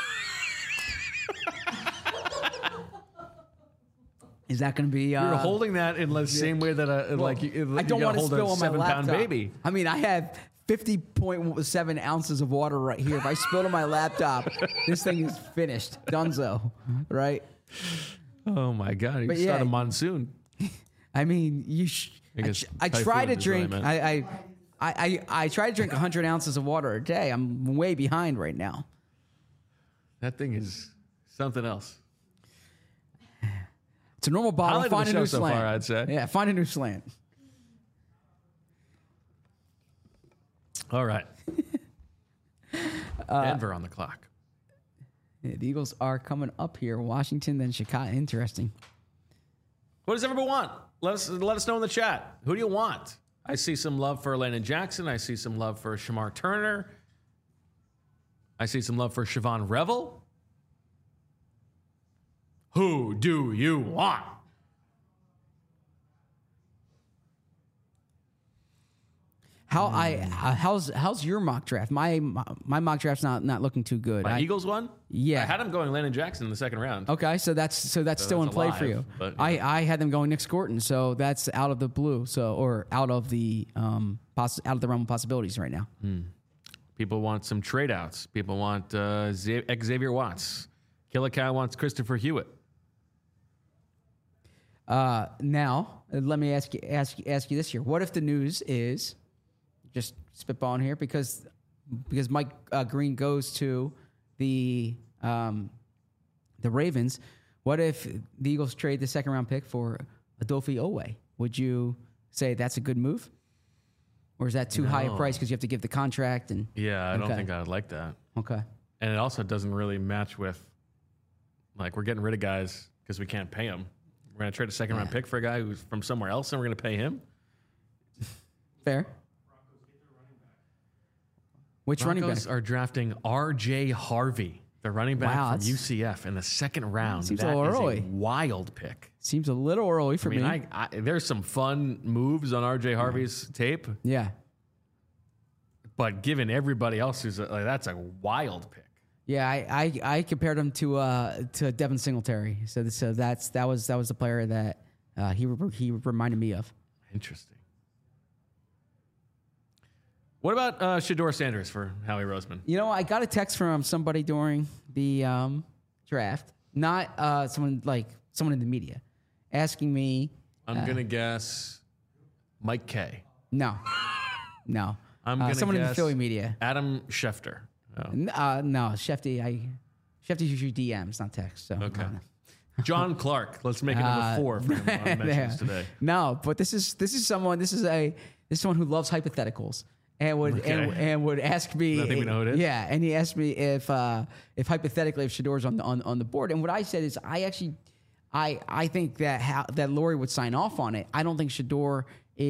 Is that going to be? Uh, You're holding that in the same way that a well, like you, I don't you want to hold spill a on my seven laptop. pound baby. I mean, I have fifty point seven ounces of water right here. If I spilled on my laptop, this thing is finished, donezo, right? Oh my god! You But start yeah. a monsoon. I mean, you. Sh- I, guess ch- I try typhoon to is what I drink. meant. I, I I, I, I try to drink one hundred ounces of water a day. I'm way behind right now. That thing is something else. It's a normal bottle. Highlight of Find the a show new so slant. far, I'd say. Yeah, find a new slant. All right. Denver on the clock. Yeah, the Eagles are coming up here. Washington, then Chicago. Interesting. What does everyone want? Let us let us know in the chat. Who do you want? I see some love for Landon Jackson. I see some love for Shamar Turner. I see some love for Siobhan Revel. Who do you want? How I uh, how's how's your mock draft? My my, my mock draft's not not looking too good. My I, Eagles one? Yeah. I had him going Landon Jackson in the second round. Okay, so that's so that's So still that's in play alive, for you. but, I, yeah. I had them going Nick Scorton, so that's out of the blue, so or out of the um poss- out of the realm of possibilities right now. People want some trade outs. People want uh, Z- Xavier Watts. Killicow wants Christopher Hewitt. Uh, now uh, let me ask you ask ask you this here: what if the news is just spitballing here because because Mike uh, Green goes to the um, the Ravens? What if the Eagles trade the second round pick for Adofi Owe? Would you say that's a good move, or is that too high a No. price because you have to give the contract and Yeah, I don't Okay. think I would like that. okay? And it also doesn't really match with, like, we're getting rid of guys because we can't pay them. We're going to trade a second round Yeah. pick for a guy who's from somewhere else and we're going to pay him? Fair. Which running back? Broncos are drafting R J Harvey, the running back Wow, from that's- U C F, in the second round. Seems a That little is early. a wild pick. Seems a little early for I mean, me. I, I, there's some fun moves on R J Harvey's tape, yeah. but given everybody else who's like, that's a wild pick. Yeah, I, I, I compared him to uh, to Devin Singletary. So so that's that was that was the player that uh, he re- he reminded me of. Interesting. What about uh, Shador Sanders for Howie Roseman? You know, I got a text from somebody during the um, draft, not uh, someone like someone in the media, asking me. I'm gonna guess Mike K. No, no. I'm uh, gonna someone in the guess Philly media. Adam Schefter. Oh. N- Uh, no, Shefty. I Shefty's usually D Ms, not text. So Okay. I don't know. John Clark. Let's make it number Uh, four for him on mentions yeah. today. No, but this is this is someone. This is a this is someone who loves hypotheticals and would and, Okay. and would ask me. I think we know who it is. Yeah, and he asked me if uh, if hypothetically if Shador's on the on, on the board, and what I said is I actually I I think that how, that Laurie would sign off on it. I don't think Shador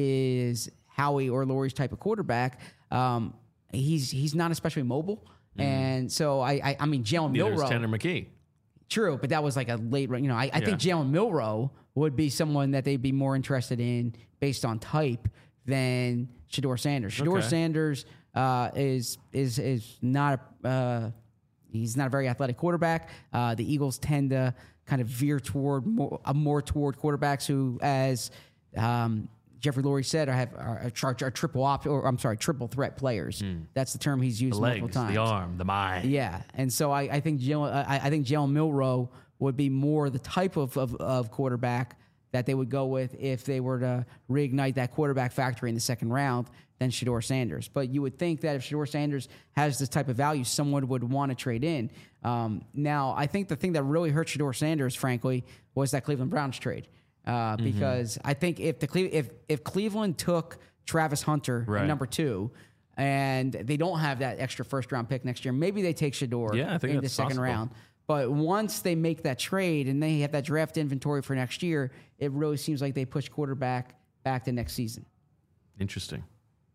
is Howie or Laurie's type of quarterback. Um, he's he's not especially mobile, and so I I, I mean Jalen Neither is Milroe. Tanner McKee. True, but that was like a late, you know, I, I think Jalen Milroe would be someone that they'd be more interested in based on type than Shador Sanders. Shador Okay. Sanders uh, is is is not a, uh, he's not a very athletic quarterback. Uh, the Eagles tend to kind of veer toward more, uh, more toward quarterbacks who, as um, Jeffrey Lurie said, are have are, are, are triple op or I'm sorry, triple threat players. That's the term he's used The multiple legs, times. the arm, the mind. Yeah, and so I, I think Jalen, I, I think Jalen Milroe would be more the type of, of, of quarterback that they would go with if they were to reignite that quarterback factory in the second round than Shador Sanders. But you would think that if Shador Sanders has this type of value, someone would want to trade in. Um, now, I think the thing that really hurt Shador Sanders, frankly, was that Cleveland Browns trade. Uh, Mm-hmm. because I think if the Cle- if if Cleveland took Travis Hunter Right. at number two, and they don't have that extra first round pick next year, maybe they take Shador Yeah, I think in the that's second possible. round. But once they make that trade and they have that draft inventory for next year, it really seems like they push quarterback back to next season. Interesting.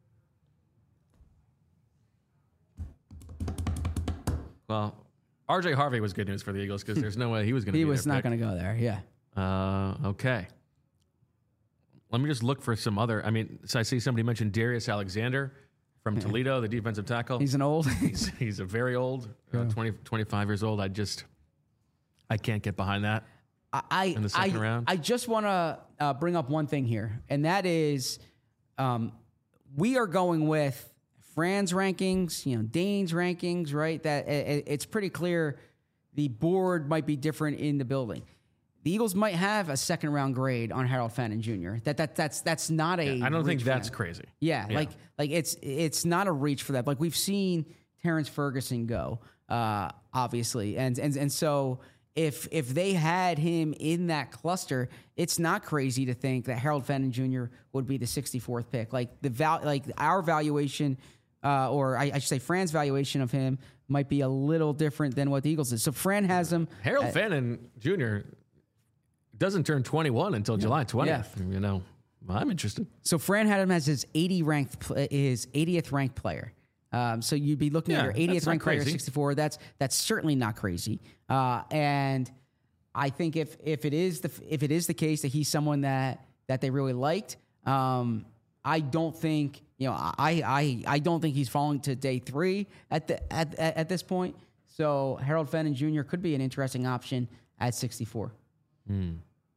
Well, R J Harvey was good news for the Eagles because there's no way he was going to He be was their not pick. going to go there. Yeah. Uh, okay. Let me just look for some other. I mean, so I see somebody mentioned Darius Alexander from Toledo, the defensive tackle. He's an old. he's, he's a very old, uh, twenty, twenty-five years old. I just, I can't get behind that. I, in the second I, round? I just want to uh, bring up one thing here, and that is um, we are going with Fran's rankings, you know, Dane's rankings, right? That it, it's pretty clear the board might be different in the building. the Eagles might have a second round grade on Harold Fenton Junior That that that's that's not a. Yeah, I don't think reach for that's them. crazy. Yeah, Yeah. like like it's it's not a reach for that. Like we've seen Terrence Ferguson go, uh, obviously, and and and so if if they had him in that cluster, it's not crazy to think that Harold Fenton Junior would be the sixty-fourth pick. Like the val, like our valuation, uh, or I, I should say, Fran's valuation of him might be a little different than what the Eagles is. So Fran has him. Harold at, Fenton Junior doesn't turn twenty-one until July twentieth. Yeah. You know, well, I'm interested. So Fran had him as his eighty ranked, pl- his eightieth ranked player. Um, so you'd be looking Yeah, at your eightieth that's not ranked player, crazy. sixty-four. That's that's certainly not crazy. Uh, and I think if if it is the if it is the case that he's someone that that they really liked, um, I don't think you know I I I don't think he's falling to day three at the at at, at this point. So Harold Fenton Junior could be an interesting option at sixty-four. Hmm.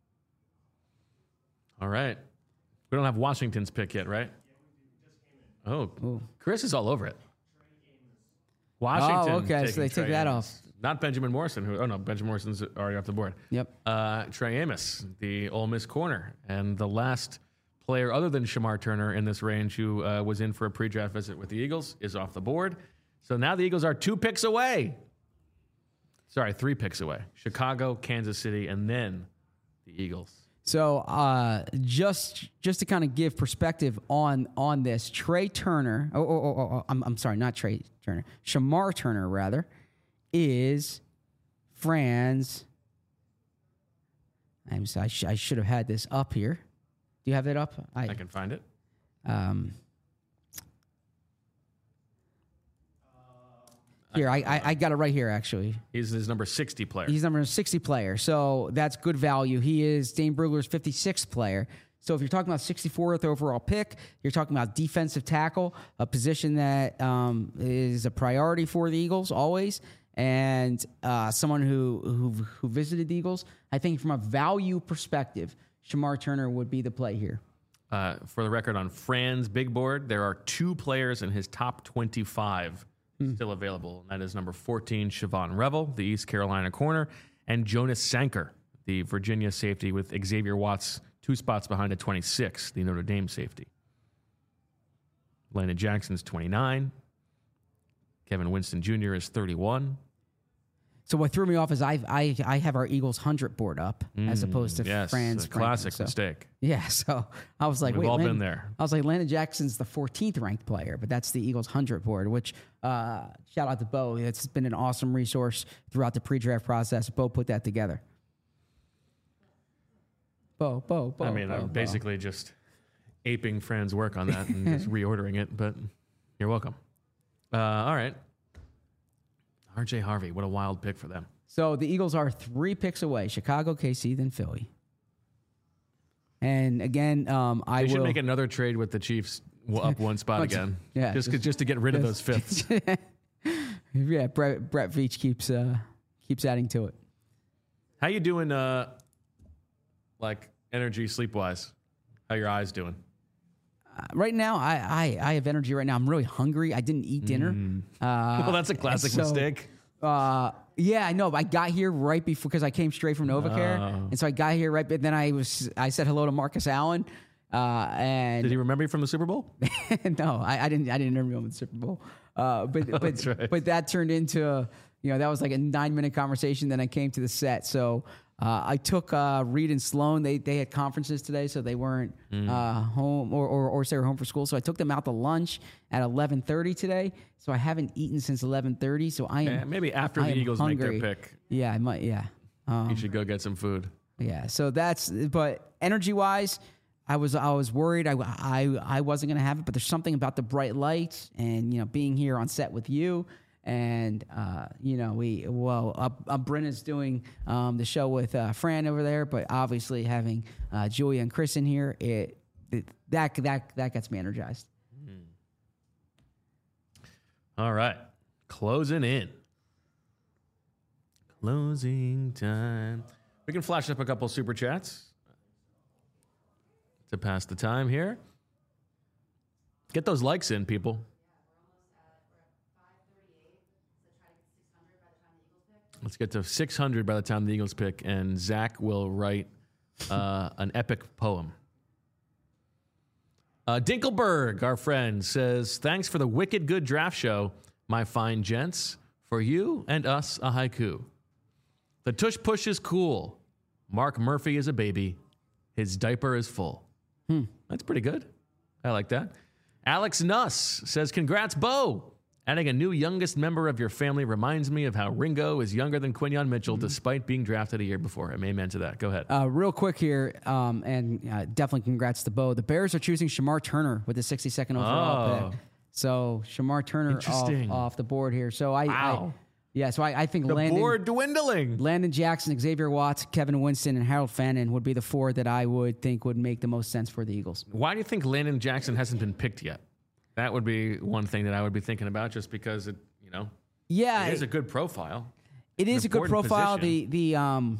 All right. We don't have Washington's pick yet, right? Oh, Ooh. Chris is all over it. Washington. Oh, okay, so taking they took Trey that Amos. Not Benjamin Morrison. Who? Oh no, Benjamin Morrison's already off the board. Yep. Uh, Trey Amos, the Ole Miss corner, and the last player other than Shamar Turner in this range who uh, was in for a pre-draft visit with the Eagles is off the board. So now the Eagles are two picks away. Sorry, three picks away. Chicago, Kansas City, and then the Eagles. So uh, just just to kind of give perspective on on this, Trey Turner, oh, oh, oh, oh I'm, I'm sorry, not Trey Turner, Shamar Turner rather, is Fran's. I'm sorry, I, sh- I should have had this up here. Do you have that up? I can find it. Um, here, I, I I got it right here actually. He's his number sixty player. He's number sixty player, so that's good value. He is Dane Brugler's fifty-sixth player. So if you're talking about sixty-fourth overall pick, you're talking about defensive tackle, a position that um, is a priority for the Eagles always, and uh, someone who, who who visited the Eagles. I think from a value perspective, Shamar Turner would be the play here. Uh, for the record, on Fran's big board, there are two players in his top twenty-five still available. That is number fourteen, Siobhan Revel, the East Carolina corner, and Jonas Sanker, the Virginia safety with Xavier Watts two spots behind at twenty-six, the Notre Dame safety. Landon Jackson's twenty-nine. Kevin Winston Junior is thirty-one. So what threw me off is I I I have our Eagles hundred board up as opposed to Yes, Fran's a classic ranking, so- mistake. Yeah, so I was like, We've wait, all been Landon- there. I was like, Landon Jackson's the fourteenth ranked player, but that's the Eagles hundred board. Which uh, shout out to Bo. It's been an awesome resource throughout the pre-draft process. Bo put that together. Bo, Bo, Bo. I mean, Bo, I'm Bo. basically just aping Fran's work on that and just reordering it, but you're welcome. Uh, all right. R J Harvey, what a wild pick for them. So the Eagles are three picks away: Chicago, K C, then Philly. And again, um, I They should will make another trade with the Chiefs w- up one spot Bunch of- again. yeah, just, just- just to get rid of those fifths. yeah, Brett, Brett Veach keeps uh, keeps adding to it. How you doing, uh, like, energy sleep-wise? How your eyes doing? Uh, right now, I, I I have energy. Right now, I'm really hungry. I didn't eat dinner. Uh, well, that's a classic so, mistake. Uh, yeah, I know. But I got here right before because I came straight from NovaCare, Oh. and so I got here right. But then I was I said hello to Marcus Allen, uh, and Did he remember you from the Super Bowl? no, I, I didn't. I didn't interview him in the Super Bowl. Uh, but but That's right. but that turned into a, you know that was like a nine minute conversation. Then I came to the set. So uh, I took uh, Reed and Sloan. They they had conferences today, so they weren't Mm. uh, home or, or or they were home for school. So I took them out to lunch at eleven thirty today. So I haven't eaten since eleven thirty. So I am Yeah, maybe after I the am Eagles hungry. make their pick, Yeah, I might. Yeah. Um, you should go get some food. yeah, so that's but energy wise, I was I was worried I I, I wasn't gonna have it, but there's something about the bright lights and you know being here on set with you, and uh, you know we well uh, uh, Brenna's doing um, the show with uh, Fran over there, but obviously having uh, Julia and Chris in here, it, it that that that gets me energized. All right. Closing in. Closing time. We can flash up a couple super chats to pass the time here. Get those likes in, people. Let's get to six hundred by the time the Eagles pick, and Zach will write uh, an epic poem. Uh, Dinkelberg, our friend, says, thanks for the wicked good draft show, my fine gents. For you and us, a haiku. The tush push is cool. Mark Murphy is a baby. His diaper is full. Hmm. That's pretty good. I like that. Alex Nuss says, congrats, Bo. Adding a new youngest member of your family reminds me of how Ringo is younger than Quinyon Mitchell, mm-hmm. despite being drafted a year before him. Amen to that. Go ahead. Uh, real quick here, um, and uh, definitely congrats to Bo. The Bears are choosing Shamar Turner with the sixty-second overall oh. pick. So Shamar Turner off, off the board here. So I, wow. I yeah, so I, I think the Landon, board dwindling. Landon Jackson, Xavier Watts, Kevin Winston, and Harold Fannin would be the four that I would think would make the most sense for the Eagles. Why do you think Landon Jackson hasn't been picked yet? That would be one thing that I would be thinking about, just because it, you know, yeah, it is a good profile. It is a good profile. Position. The the um,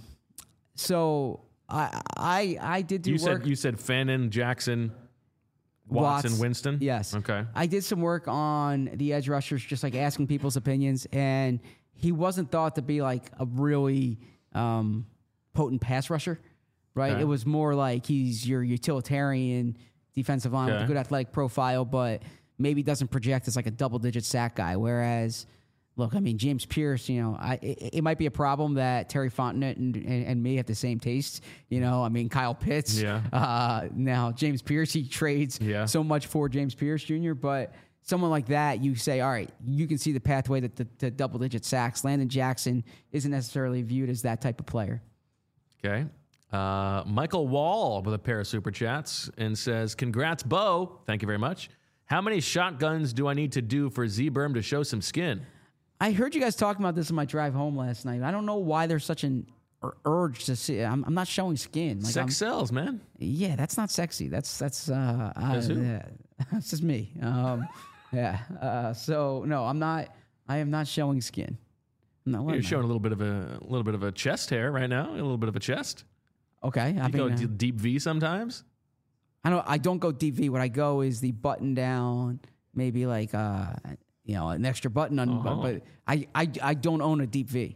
so I I I did do you work. Said, you said Fannin, Jackson, Watts, and Winston? Yes. Okay. I did some work on the edge rushers, just like asking people's opinions, and he wasn't thought to be like a really um, potent pass rusher, right? Okay. It was more like he's your utilitarian defensive line okay. with a good athletic profile, but maybe doesn't project as like a double-digit sack guy, whereas... Look, I mean, James Pierce, you know, I, it, it might be a problem that Terry Fontenot and, and, and me have the same taste. You know, I mean, Kyle Pitts. Yeah. Uh, now, James Pierce, he trades yeah. so much for James Pierce Junior But someone like that, you say, all right, you can see the pathway to, to, to double-digit sacks. Landon Jackson isn't necessarily viewed as that type of player. Okay. Uh, Michael Wall with a pair of super chats and says, congrats, Bo. Thank you very much. How many shotguns do I need to do for Z-Berm to show some skin? I heard you guys talking about this on my drive home last night. I don't know why there's such an ur- urge to see. I'm, I'm not showing skin. Like Sex I'm, sells, man. Yeah, that's not sexy. That's that's uh, that's uh who? yeah, that's just me. Um, yeah. Uh, so no, I'm not. I am not showing skin. No, You're showing a little bit of a, a little bit of a chest hair right now. A little bit of a chest. Okay, I you go mean, d- uh, deep V sometimes. I don't. I don't go deep V. What I go is the button down, maybe like uh. You know, an extra button on, uh-huh. but, but I, I, I don't own a deep V.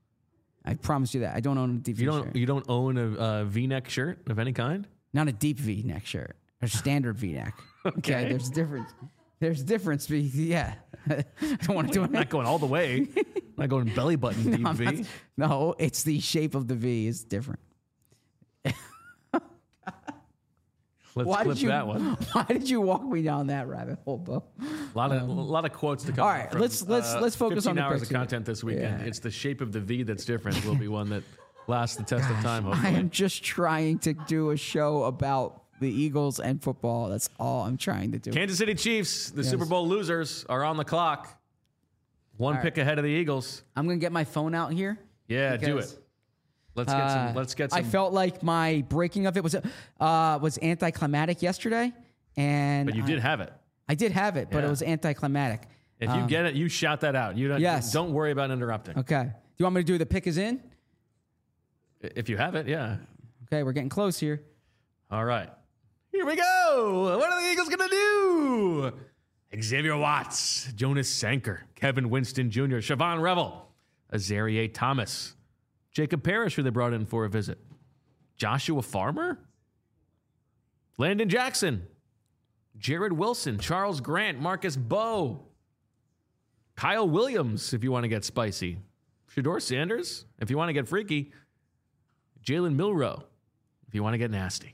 I promise you that I don't own a deep V. You don't shirt. you don't own a, a V-neck shirt of any kind? Not a deep V neck shirt, a standard V neck. Okay. okay, there's a difference. There's a difference. Yeah, I don't want to do it. I'm not going all the way. I'm not going belly button deep no, V. not, no, it's the shape of the V is different. Let's why clip did you, that one. Why did you walk me down that rabbit hole, Bo? A lot of um, a lot of quotes to come. All right, from, let's let's uh, let's focus on the hours picks of content this weekend. Yeah. It's the shape of the V that's different. Will be one that lasts the test Gosh, of time. I Hopefully. am just trying to do a show about the Eagles and football. That's all I'm trying to do. Kansas City Chiefs, the Yes. Super Bowl losers, are on the clock. One All pick right. ahead of the Eagles. I'm gonna get my phone out here. Yeah, do because- it. Let's get some. Uh, Let's get some. I felt like my breaking of it was uh, was anticlimactic yesterday, and but you I, did have it. I did have it, but Yeah. it was anticlimactic. If you Um, get it, you shout that out. You don't. Yes. Don't worry about interrupting. Okay. Do you want me to do the pick is in? If you have it, yeah. Okay, we're getting close here. All right. Here we go. What are the Eagles gonna do? Xavier Watts, Jonas Sanker, Kevin Winston Junior, Siobhan Revel, Azaria Thomas, Jacob Parrish, who they brought in for a visit, Joshua Farmer, Landon Jackson, Jared Wilson, Charles Grant, Marcus Bowe, Kyle Williams, if you want to get spicy, Shedeur Sanders, if you want to get freaky, Jalen Milroe, if you want to get nasty.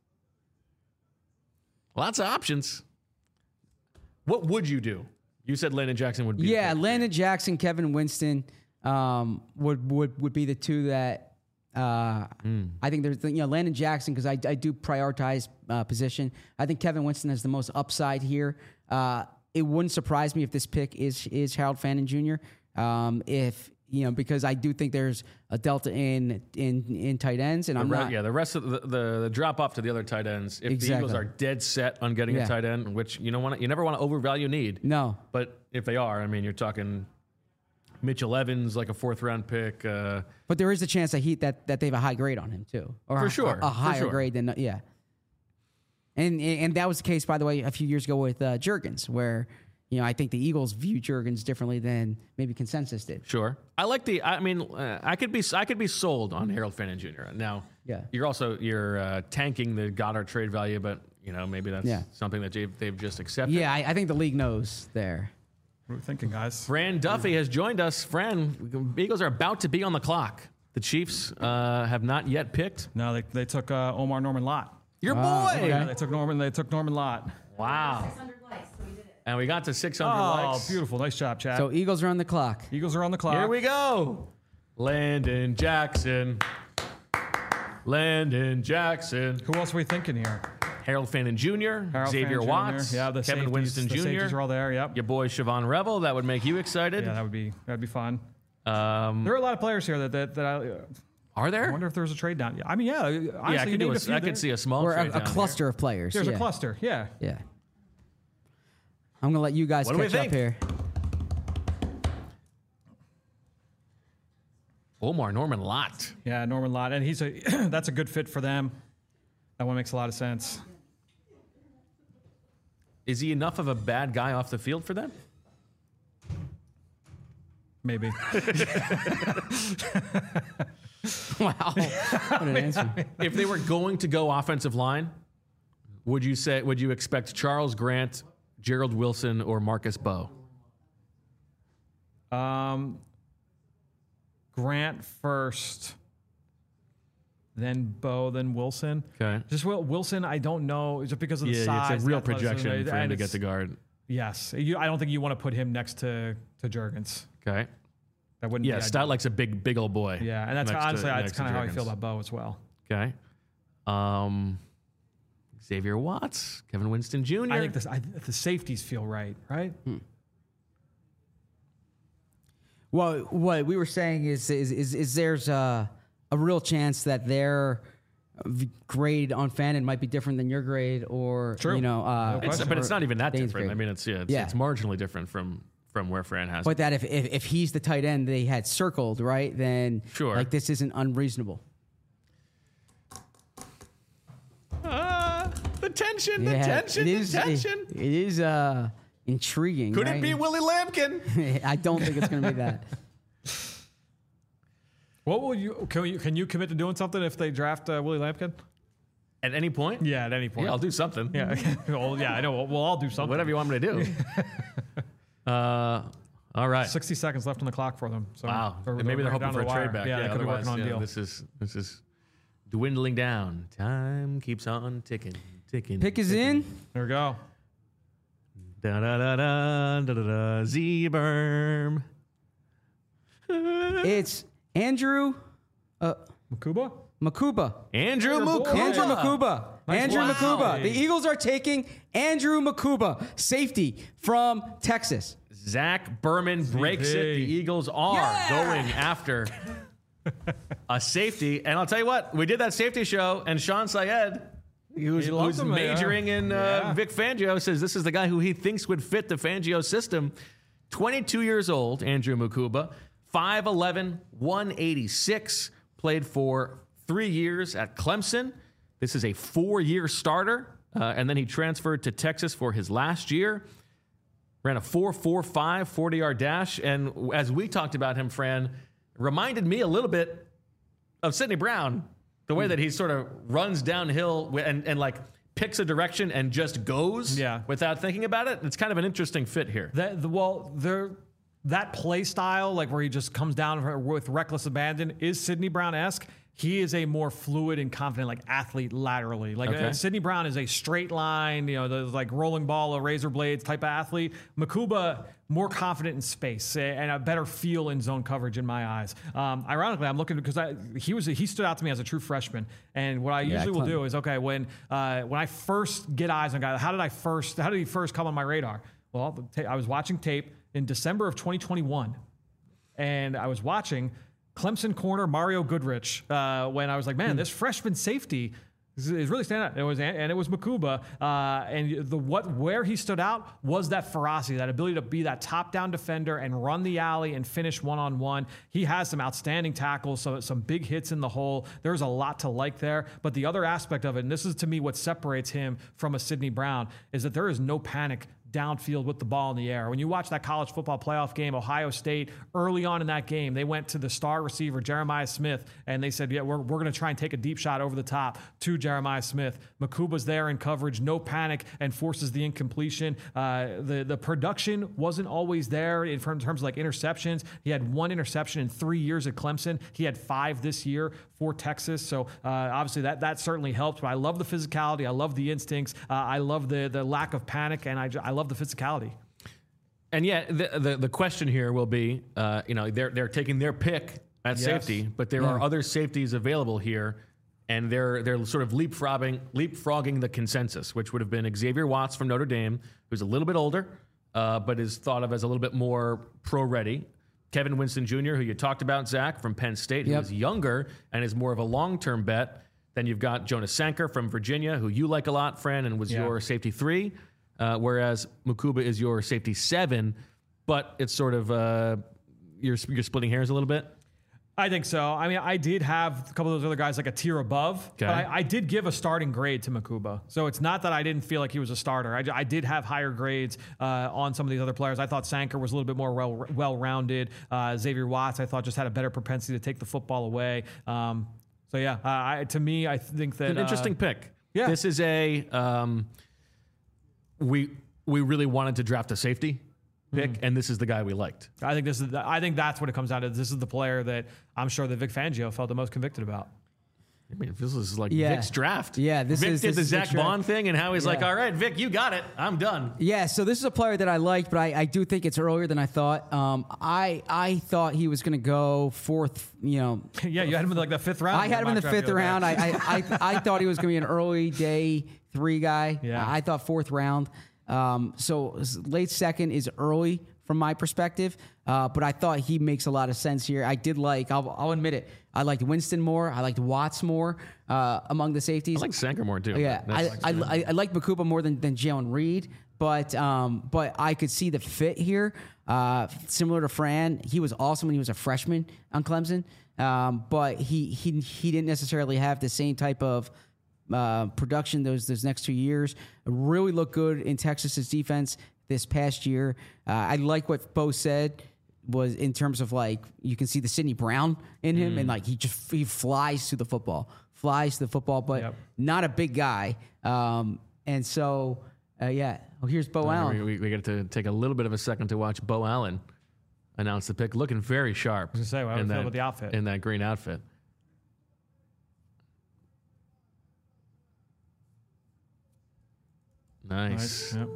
Lots of options. What would you do? You said Landon Jackson would be. Yeah, the pick. Landon Jackson, Kevin Winston um, would would would be the two that uh, Mm. I think there's you know Landon Jackson because I, I do prioritize uh, position. I think Kevin Winston has the most upside here. Uh, it wouldn't surprise me if this pick is is Harold Fannin Junior Um, if you know because I do think there's a delta in in in tight ends, and The I'm re- not. yeah, the rest of the, the, the drop off to the other tight ends. If Exactly. the Eagles are dead set on getting Yeah. a tight end, which you don't want, you never want to overvalue need. No. But if they are, I mean, you're talking Mitchell Evans, like a fourth round pick. Uh, But there is a chance that he that, that they have a high grade on him too, or For a, sure, a, a for higher sure. grade than yeah. And and that was the case, by the way, a few years ago with uh, Juergens, where you know, I think the Eagles view Juergens differently than maybe consensus did. Sure. I like the, I mean, uh, I could be, I could be sold on Harold Fannin Junior Now, Yeah. you're also, you're uh, tanking the Goddard trade value, but, you know, maybe that's Yeah. something that they've, they've just accepted. Yeah, I, I think the league knows there. What are we thinking, guys? Fran Duffy has joined us. Fran, Eagles are about to be on the clock. The Chiefs uh, have not yet picked. No, they, they took uh, Omar Norman Lott. Your Ah, boy. okay. Yeah, they took Norman. They took Norman Lott. Wow. six hundred likes, so we did it. And we got to six hundred Oh, likes. beautiful! Nice job, Chad. So Eagles are on the clock. Eagles are on the clock. Here we go. Landon Jackson. Landon Jackson. Who else are we thinking here? Harold Fannin Junior Harold Xavier Fannin Watts. Junior Yeah, the Kevin safeties, Winston the Junior safeties are all there. Yep. Your boy Siobhan Revel. That would make you excited. Yeah, that would be that'd be fun. Um, There are a lot of players here that that, that I, are I there? wonder if there's a trade down. Yeah, I mean, yeah. Honestly, yeah, I you could, do named a, a few I there. could see a small Or trade a, a down cluster of players. There's yeah. a cluster. Yeah. Yeah. I'm going to let you guys What do we catch up think? here. Here. Omar Norman Lott. Yeah, Norman Lott, and he's a that's a good fit for them. That one makes a lot of sense. Is he enough of a bad guy off the field for them? Maybe. Wow. What an answer. If they were going to go offensive line, would you say would you expect Charles Grant, Gerald Wilson, or Marcus Bowe? Um, Grant first, then Bo, then Wilson. Okay. Just Wil- Wilson, I don't know, just because of the Yeah, size. it's a real the athleticism, projection for him and to get it's- the guard. Yes, you, I don't think you want to put him next to to Juergens. Okay. That wouldn't. Yeah, be Stout ideal. likes a big, big old boy. Yeah, and that's next to- honestly that's next to kind of how I Juergens. feel about Bo as well. Okay. Um, Xavier Watts, Kevin Winston Junior I think this, I, the safeties feel right, right? Well, what we were saying is is is, is there's a, a real chance that their v- grade on Fannin might be different than your grade, or True. you know, uh, No It's, question. but it's not even that Dane's different. grade. I mean, it's yeah, it's, Yeah. it's marginally different from from where Fran has. But it. that if, if if he's the tight end they had circled, right, then Sure. like this isn't unreasonable. Ah, the tension, the Yeah, tension, it is. the It, tension. it is uh, intriguing. Could right? it be Willie Lampkin? I don't think it's going to be that. What will you can you can you commit to doing something if they draft uh, Willie Lampkin? At any point? Yeah, at any point. Yeah, I'll do something. Yeah, well, yeah, I know. We'll, we'll all do something. Whatever you want me to do. uh, all right. Sixty seconds left on the clock for them. So Wow. they're- Maybe they're right hoping down for to a the trade wire. back. Yeah, they could be otherwise, working on a yeah, deal. This is this is dwindling down. Time keeps on ticking, ticking. Pick is ticking. in. There we go. Da da da da da da da. Z-Berm. It's Andrew uh, Makuba? Makuba. Andrew Boy. Mukuba. Andrew Makuba. Nice Andrew wow. Makuba. The Eagles are taking Andrew Makuba, safety from Texas. Zach Berman breaks it. The Eagles are Yeah! going after a safety. And I'll tell you what, we did that safety show, and Sean Syed, who's, He loved who's him, yeah. majoring in uh, Yeah. Vic Fangio, says this is the guy who he thinks would fit the Fangio system. twenty-two years old, Andrew Makuba, five eleven, one eighty-six, played for three years at Clemson. This is a four-year starter, uh, and then he transferred to Texas for his last year. Ran a four four five forty-yard dash, and as we talked about him, Fran, reminded me a little bit of Sidney Brown, the way that he sort of runs downhill wi- and, and like picks a direction and just goes Yeah. without thinking about it. It's kind of an interesting fit here. That the well, there that play style, like where he just comes down with reckless abandon, is Sidney Brown-esque. He is a more fluid and confident, like athlete laterally. Like Okay. uh, Sidney Brown is a straight line, you know, the like rolling ball, a razor blades type of athlete. Makuba more confident in space and a better feel in zone coverage in my eyes. Um, ironically, I'm looking because I, he was he stood out to me as a true freshman. And what I Yeah, usually will Clem- do is okay when uh, when I first get eyes on a guy, how did I first how did he first come on my radar? Well, the ta- I was watching tape in December of twenty twenty-one, and I was watching Clemson corner Mario Goodrich uh, when I was like, man, this freshman safety is is really standing out. It was and it was Makuba, uh, and the what where he stood out was that ferocity, that ability to be that top down defender and run the alley and finish one on one. He has some outstanding tackles, so some big hits in the hole. There's a lot to like there, but the other aspect of it, and this is to me what separates him from a Sidney Brown, is that there is no panic downfield with the ball in the air. When you watch that college football playoff game, Ohio State, early on in that game, they went to the star receiver, Jeremiah Smith, and they said, yeah, we're, we're going to try and take a deep shot over the top to Jeremiah Smith. Makuba's there in coverage, no panic, and forces the incompletion. Uh, the, the production wasn't always there in terms of like interceptions. He had one interception in three years at Clemson. He had five this year for Texas. So uh, obviously that, that certainly helped. But I love the physicality. I love the instincts. Uh, I love the, the lack of panic, and I, I love the physicality. And yeah, the, the the question here will be, uh, you know, they're they're taking their pick at Yes. safety, but there Yeah. are other safeties available here, and they're they're sort of leapfrogging leapfrogging the consensus, which would have been Xavier Watts from Notre Dame, who's a little bit older, uh, but is thought of as a little bit more pro-ready. Kevin Winston Junior, who you talked about, Zach, from Penn State, who Yep. is younger and is more of a long-term bet. Then you've got Jonas Sanker from Virginia, who you like a lot, Fran, and was Yeah. your safety three. Uh, whereas Mukuba is your safety seven, but it's sort of uh, you're you're splitting hairs a little bit. I think so. I mean, I did have a couple of those other guys like a tier above, Okay. but I, I did give a starting grade to Makuba. So it's not that I didn't feel like he was a starter. I, I did have higher grades uh, on some of these other players. I thought Sanker was a little bit more well, well-rounded. Uh, Xavier Watts, I thought, just had a better propensity to take the football away. Um, so yeah, uh, I, to me, I think that An interesting uh, pick. yeah. This is a um, we we really wanted to draft a safety pick, Mm-hmm. and this is the guy we liked. I think this is. The, I think that's what it comes down to. This is the player that I'm sure that Vic Fangio felt the most convicted about. I mean, this is like Yeah. Vic's draft. Yeah, this Vic is- did this the is Zach Vic's draft. Bond thing, and how he's like, Yeah. "All right, Vic, you got it. I'm done." Yeah, so this is a player that I liked, but I, I do think it's earlier than I thought. Um, I I thought he was going to go fourth. You know, Yeah, you had him in like the fifth round. I had him in the mock draft fifth other day. round. I I, I I thought he was going to be an early day three guy. Yeah. I thought fourth round. Um, so late second is early from my perspective, uh, but I thought he makes a lot of sense here. I did like. I'll, I'll admit it. I liked Winston more. I liked Watts more uh, among the safeties. I like Sanker more too. Yeah, I, That's- I, I, I like Makuba more than, than Jalen Reed, but um, but I could see the fit here. Uh, similar to Fran, he was awesome when he was a freshman on Clemson, um, but he he he didn't necessarily have the same type of uh, production those those next two years. Really looked good in Texas's defense this past year. Uh, I like what Bo said was in terms of like you can see the Sidney Brown in him, and like he just he flies to the football, flies to the football, but Yep. not a big guy. Um, and so uh, yeah, oh, here's Bo Allen. we, we, we get to take a little bit of a second to watch Bo Allen announce the pick, looking very sharp. I was gonna say, how do in you feel that- about the outfit? in that green outfit. Nice. Yep.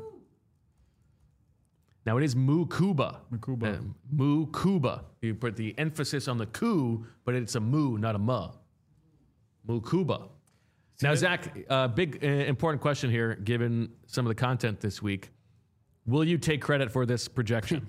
Now it is Mukuba. Mukuba. Uh, Mukuba. You put the emphasis on the ku, but it's a mu, not a ma. Mukuba. Now, Zach, uh, big uh, important question here, given some of the content this week. Will you take credit for this projection?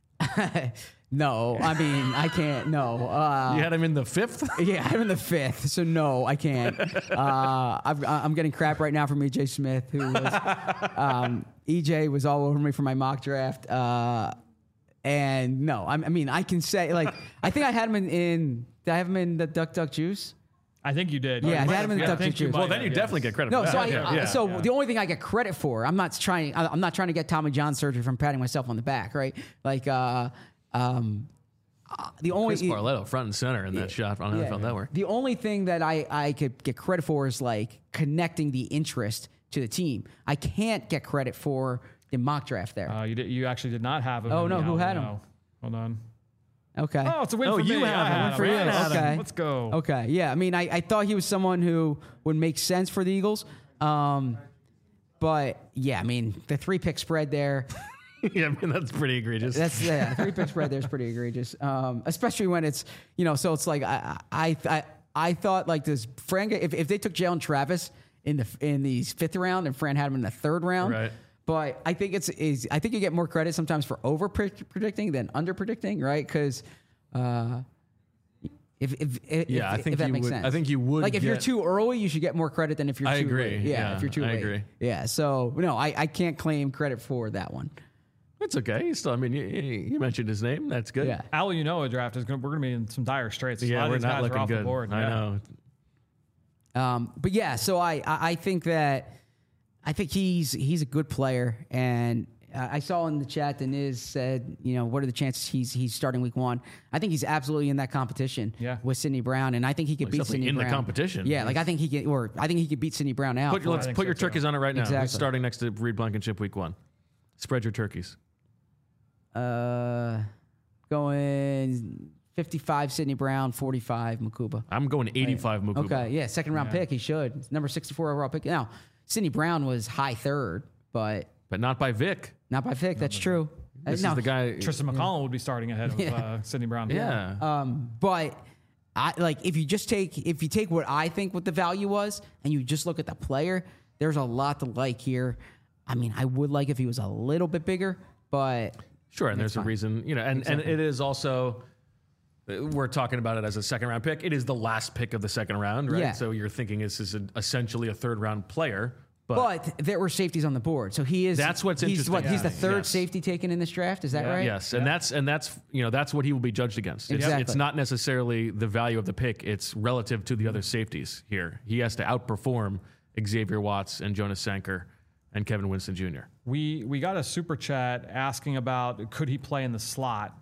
No, I mean I can't. No, uh, You had him in the fifth? yeah, I'm in the fifth, so no, I can't. Uh, I've, I'm getting crap right now from E J Smith, who was um, E J was all over me for my mock draft. Uh, and no, I, I mean I can say like I think I had him in, in did I have him in the Duck Duck Juice? I think you did. Yeah, You I might had him in the have- Duck I think Duck you Juice. might Well, then have, you yes. definitely get credit No, for so that. I, yeah, uh, yeah, so yeah. the only thing I get credit for, I'm not trying. I- I'm not trying to get Tommy John surgery from patting myself on the back, right? Like, uh, um, uh, the only Chris Barletto, front and center in that shot on N F L Yeah. Network. The only thing that I, I could get credit for is like connecting the interest to the team. I can't get credit for the mock draft there. Uh, you did. You actually did not have him. Oh, in no, the who had album, him? no. Hold on. Okay. Oh, it's a win Oh, for you me. have I him. had Win for him. you. Yes. Okay. Let's go. Okay. Yeah. I mean, I, I thought he was someone who would make sense for the Eagles. Um, but yeah, I mean, the three pick spread there. yeah, I mean, that's pretty egregious. That's yeah, three pick spread there is pretty egregious. Um, especially when it's you know, so it's like I I I, I thought like this Fran if if they took Jalen Travis in the in the fifth round and Fran had him in the third round. Right. But I think it's is I think you get more credit sometimes for over predicting than under predicting, right? Because uh, if if if, Yeah, I if, think if that you makes would- sense, I think you would like if you're get- too early, you should get more credit than if you're I too agree. late. Yeah, Yeah, if you're too I late. agree. Yeah, so no, I, I can't claim credit for that one. It's okay. He's still, I mean, you, you mentioned his name. That's good. Yeah. Al, you know, a draft is going. We're going to be in some dire straits. A lot Yeah, of we're these not guys are looking off the good. board. I Yeah. know. Um, but yeah, so I, I I think that I think he's he's a good player, and uh, I saw in the chat that Niz said, you know, what are the chances he's he's starting week one? I think he's absolutely in that competition yeah. with Sidney Brown, and I think he could well, beat Sidney in Brown. in the competition. Yeah, like I think he could, or I think he could beat Sidney Brown out. Put, let's put so your turkeys too. on it right now. Exactly. Who's starting next to Reed Blankenship week one? Spread your turkeys. Uh, going fifty-five Sidney Brown, forty-five Mukuba. I'm going eighty-five Mukuba. Okay, yeah, second round Yeah. pick. He should. It's number sixty-four overall pick. Now, Sidney Brown was high third, but But not by Vic. not by Vic. That's true. This Uh, is no, the guy. Tristan McCollum would be starting ahead of Yeah. uh, Sidney Brown. Yeah. Um, but I like if you just take if you take what I think what the value was and you just look at the player, there's a lot to like here. I mean, I would like if he was a little bit bigger, but Sure, and there's fine. a reason, you know, and, and it is also, uh, we're talking about it as a second round pick. It is the last pick of the second round, right? Yeah. So you're thinking this is a, essentially a third round player. But, but there were safeties on the board, so he is. That's what's he's What, he's the interesting. third Yes. safety taken in this draft. Is that Yeah. right? yes, and that's and that's you know that's what he will be judged against. It's, Exactly. it's not necessarily the value of the pick; it's relative to the other safeties here. He has to outperform Xavier Watts and Jonas Sanker and Kevin Winston Junior We we got a super chat asking about could he play in the slot.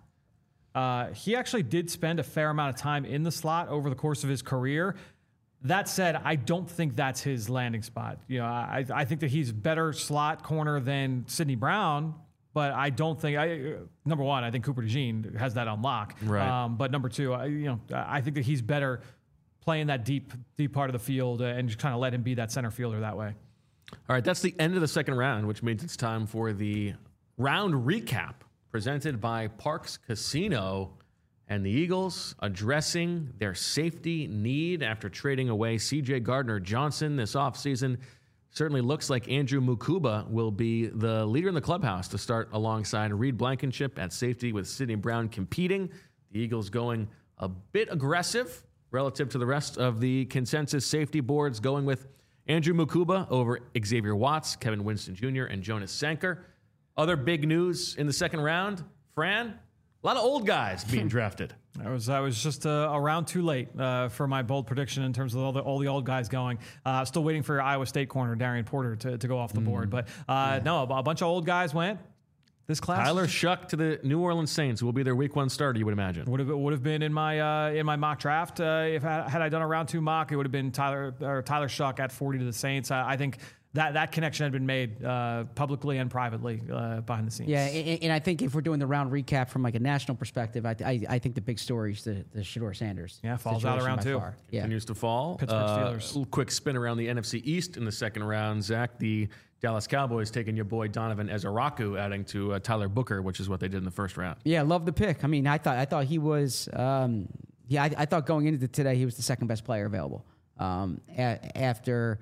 Uh, he actually did spend a fair amount of time in the slot over the course of his career. That said, I don't think that's his landing spot. You know, I I think that he's better slot corner than Sidney Brown, but I don't think I number one, I think Cooper DeJean has that on lock. Right. Um, but number two, I, you know, I think that he's better playing that deep deep part of the field uh, and just kind of let him be that center fielder that way. All right, that's the end of the second round, which means it's time for the round recap presented by Parx Casino and the Eagles addressing their safety need after trading away C J Gardner-Johnson this offseason. Certainly looks like Andrew Mukuba will be the leader in the clubhouse to start alongside Reed Blankenship at safety with Sidney Brown competing. The Eagles going a bit aggressive relative to the rest of the consensus safety boards, going with Andrew Mukuba over Xavier Watts, Kevin Winston Junior, and Jonas Sanker. Other big news in the second round, Fran, a lot of old guys being drafted. I was I was just uh, a round too late uh, for my bold prediction in terms of all the all the old guys going. Uh, still waiting for Iowa State corner Darian Porter to, to go off the board, but uh, no, a bunch of old guys went. This class Tyler Shuck to the New Orleans Saints, who will be their week one starter, you would imagine. would have would have been in my uh, in my mock draft. Uh, if I, had I done a round two mock, it would have been Tyler or Tyler Shuck at forty to the Saints. I, I think that that connection had been made uh, publicly and privately uh, behind the scenes. Yeah, and, and I think if we're doing the round recap from like a national perspective, I I, I think the big story is the the Shador Sanders. Yeah, falls out situation around by two. far. Yeah. Continues to fall. Pittsburgh Uh, Steelers. little quick spin around the N F C East in the second round. Zach, the Dallas Cowboys taking your boy Donovan Ezaraku, adding to uh, Tyler Booker, which is what they did in the first round. Yeah, love the pick. I mean, I thought I thought he was. Um, yeah, I, I thought going into today he was the second best player available. Um, a, after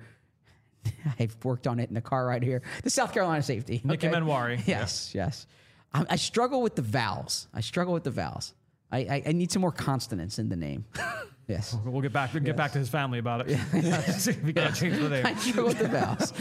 I've worked on it in the car right here, the South Carolina safety, Nicky Manwari. Yes, yes. I, I struggle with the vowels. I struggle with the vowels. I, I, I need some more consonants in the name. Yes. We'll get back. We'll get back to his family about it. See if we can change the name. I struggle with the vowels.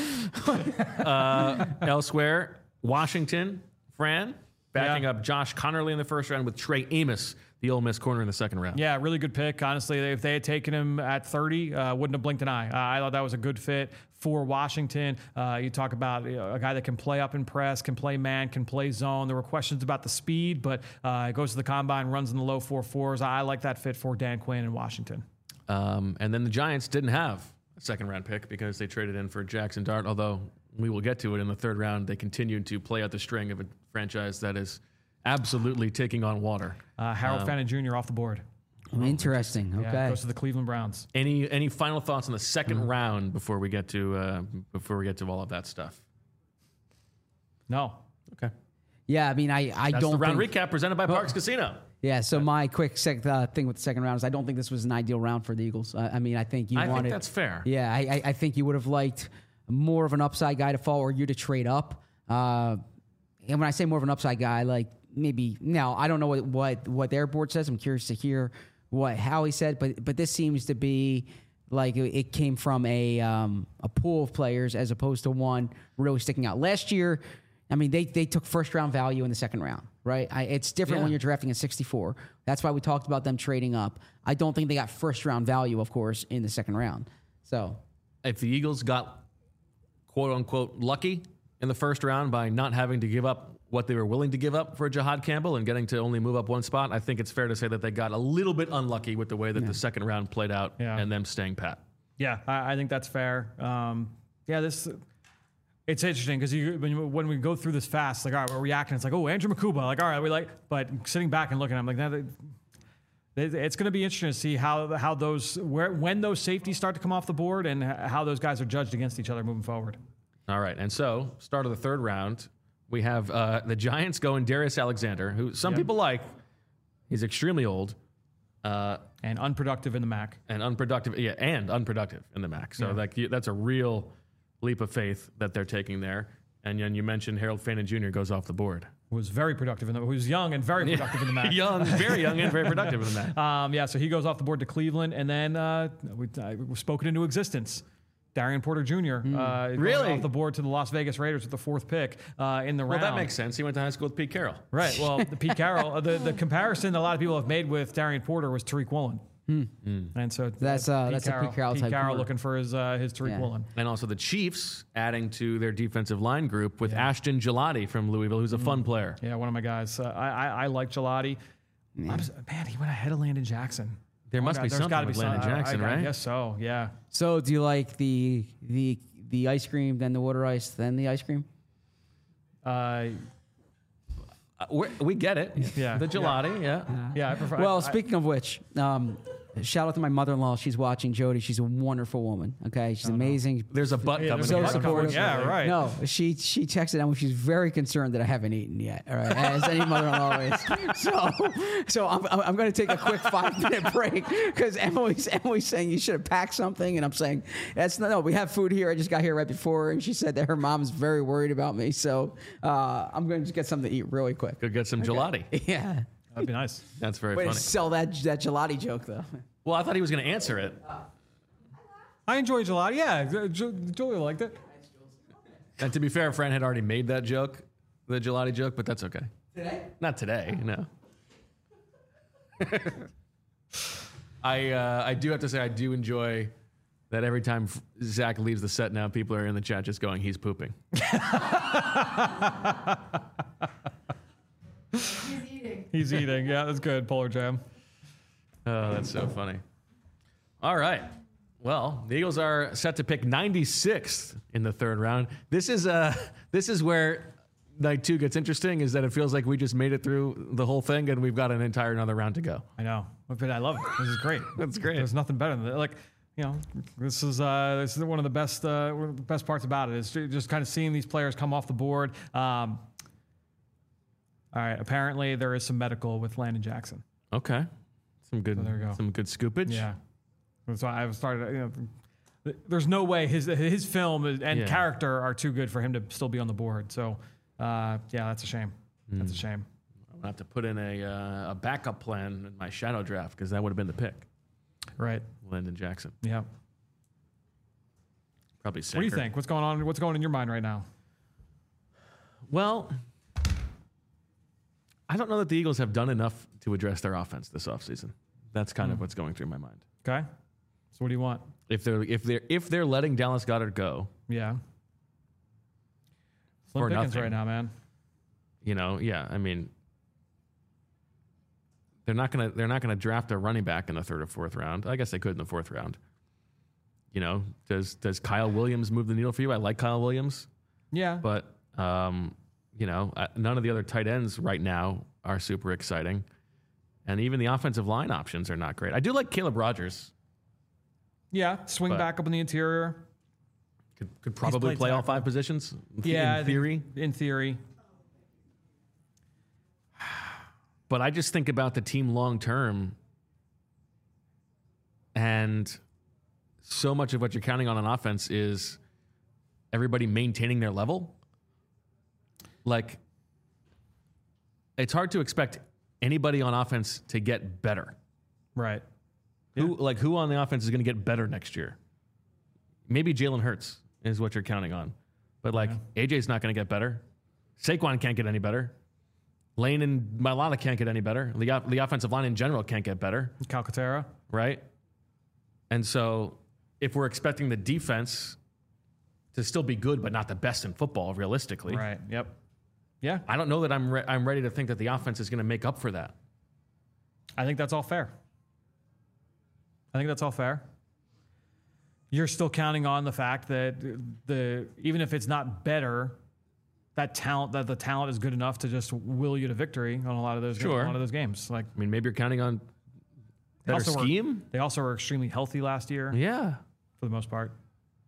Uh, elsewhere, Washington, Fran, backing Yeah. up Josh Connerly in the first round with Trey Amos, the Ole Miss corner in the second round. Yeah, really good pick. Honestly, if they had taken him at thirty, uh, wouldn't have blinked an eye. Uh, I thought that was a good fit for Washington. Uh, you talk about you know, a guy that can play up and press, can play man, can play zone. There were questions about the speed, but uh, goes to the combine, runs in the low four fours. I like that fit for Dan Quinn in Washington. Um, and then the Giants didn't have a second round pick because they traded in for Jackson Dart, although we will get to it in the third round. They continued to play out the string of a franchise that is absolutely taking on water. Uh, Harold Um, Fannin Junior off the board. Interesting. Okay. Yeah, goes to the Cleveland Browns. Any any final thoughts on the second round before we get to uh, before we get to all of that stuff? No. Okay, Yeah, I mean, I, I that's don't the round think, recap presented by Parx Casino. Yeah, so my quick sec, uh, thing with the second round is I don't think this was an ideal round for the Eagles. I, I mean, I think you I wanted. think that's fair. Yeah, I, I, I think you would have liked more of an upside guy to fall or you to trade up. Uh, and when I say more of an upside guy, like maybe now I don't know what, what, what their board says. I'm curious to hear what how he said, but but this seems to be like it, it came from a um, a pool of players as opposed to one really sticking out. Last year, I mean, they they took first round value in the second round, right? I, it's different Yeah. when you're drafting at sixty-four. That's why we talked about them trading up. I don't think they got first round value, of course, in the second round. So If the Eagles got quote unquote lucky, in the first round by not having to give up what they were willing to give up for Jihad Campbell and getting to only move up one spot. I think it's fair to say that they got a little bit unlucky with the way that yeah. the second round played out yeah. and them staying pat. Yeah, I, I think that's fair. Um, yeah, this it's interesting because you, when, you, when we go through this fast, like, all right, we're reacting. It's like, oh, Andrew Makuba. Like, all right, we like, but sitting back and looking, I'm like, that. It's going to be interesting to see how how those where when those safeties start to come off the board and how those guys are judged against each other moving forward. All right, and so start of the third round, we have uh, the Giants going Darius Alexander, who some yep. people like. He's extremely old. Uh, and unproductive in the M A C. And unproductive, yeah, and unproductive in the M A C. So yeah. like that's a real leap of faith that they're taking there. And then you mentioned Harold Fana Junior goes off the board. Was very productive in the. Who was young and very productive in the M A C. young, very young and very productive in the M A C. Um, yeah, so he goes off the board to Cleveland, and then uh, we uh, we spoken into existence. Darian Porter Junior Mm. Uh, really off the board to the Las Vegas Raiders with the fourth pick uh, in the well, round. Well, that makes sense. He went to high school with Pete Carroll. Right. Well, the Pete Carroll. Uh, the the comparison that a lot of people have made with Darian Porter was Tariq Woolen. Hmm. Mm. And so that's uh, Pete that's Carroll, a Pete Carroll Pete type Carroll corner. looking for his uh, his Tariq yeah. Woolen. And also the Chiefs adding to their defensive line group with yeah. Ashton Gelati from Louisville, who's a mm. fun player. Yeah, one of my guys. Uh, I, I I like Gelati. Yeah. Just, man, he went ahead of Landon Jackson. There oh must God, be there's something gotta with be Landon some, Jackson, I, I, right? I guess so. Yeah. So do you like the the the ice cream, then the water ice, then the ice cream? Uh, uh we we get it. Yeah. The gelati. Yeah. Yeah. yeah I prefer, well, I, speaking of which, um, shout out to my mother-in-law. She's watching Jody. She's a wonderful woman. Okay, she's oh, amazing. No. There's a butt yeah, coming. So here. supportive. Yeah, right. No, she she texted out. She's very concerned that I haven't eaten yet. All right, as any mother-in-law is. So, so I'm I'm going to take a quick five minute break because Emily's Emily's saying you should have packed something, and I'm saying that's no, no. We have food here. I just got here right before, and she said that her mom's very worried about me. So uh, I'm going to just get something to eat really quick. Go get some okay. gelati. Yeah. That'd be nice. That's very Way funny. to sell that that gelati joke though. Well, I thought he was going to answer it. I enjoy gelati. Yeah, Julia liked it. And to be fair, Fran had already made that joke, the gelati joke, but that's okay. Today? Not today, no. I uh, I do have to say I do enjoy that every time Zach leaves the set now, people are in the chat just going, he's pooping. He's eating. He's eating. Yeah, that's good. Polar Jam. Oh, that's so funny. All right. Well, the Eagles are set to pick ninety-sixth in the third round. This is uh, this is where night two gets interesting, is that it feels like we just made it through the whole thing and we've got an entire another round to go. I know. But I love it. This is great. That's great. There's nothing better than that. Like, you know, this is uh, this is one of the best uh, one of the best parts about it is just kind of seeing these players come off the board. Um, all right. Apparently, there is some medical with Landon Jackson. Okay. Some good. So there we go. Some good scoopage. Yeah. So I started. You know, there's no way his his film and Yeah. character are too good for him to still be on the board. So, uh, yeah, that's a shame. Mm. That's a shame. I'm gonna have to put in a uh, a backup plan in my shadow draft because that would have been the pick. Right. Landon Jackson. Yeah. Probably. What do you think? What's going on? What's going in your mind right now? Well, I don't know that the Eagles have done enough to address their offense this offseason. That's kind Mm. of what's going through my mind. Okay. So what do you want? If they're if they're if they're letting Dallas Goedert go, Yeah. Slim For pickings nothing. right now, man. you know, yeah, I mean, they're not gonna they're not gonna draft a running back in the third or fourth round. I guess they could in the fourth round. You know, does does Kyle Williams move the needle for you? I like Kyle Williams, Yeah. but um, you know, uh, none of the other tight ends right now are super exciting, and even the offensive line options are not great. I do like Caleb Rogers. Yeah. Swing But- back up in the interior. Could could probably played play all tackle. five positions. Yeah. I in think- theory. In theory. But I just think about the team long term, and so much of what you're counting on on offense is everybody maintaining their level. Like, it's hard to expect anybody on offense to get better. Right. Who like who on the offense is going to get better next year? Maybe Jalen Hurts is what you're counting on, but like A J's not going to get better. Saquon can't get any better. Lane and Mailata can't get any better. The, the offensive line in general can't get better, Calcaterra. right? And so if we're expecting the defense to still be good, but not the best in football, realistically. Right. Yep. Yeah. I don't know that I'm re- I'm ready to think that the offense is going to make up for that. I think that's all fair. I think that's all fair. You're still counting on the fact that the even if it's not better, that talent that the talent is good enough to just will you to victory on a lot of those Sure. a lot of those games. Like I mean, maybe you're counting on they better also were- scheme. they also were extremely healthy last year Yeah. for the most part.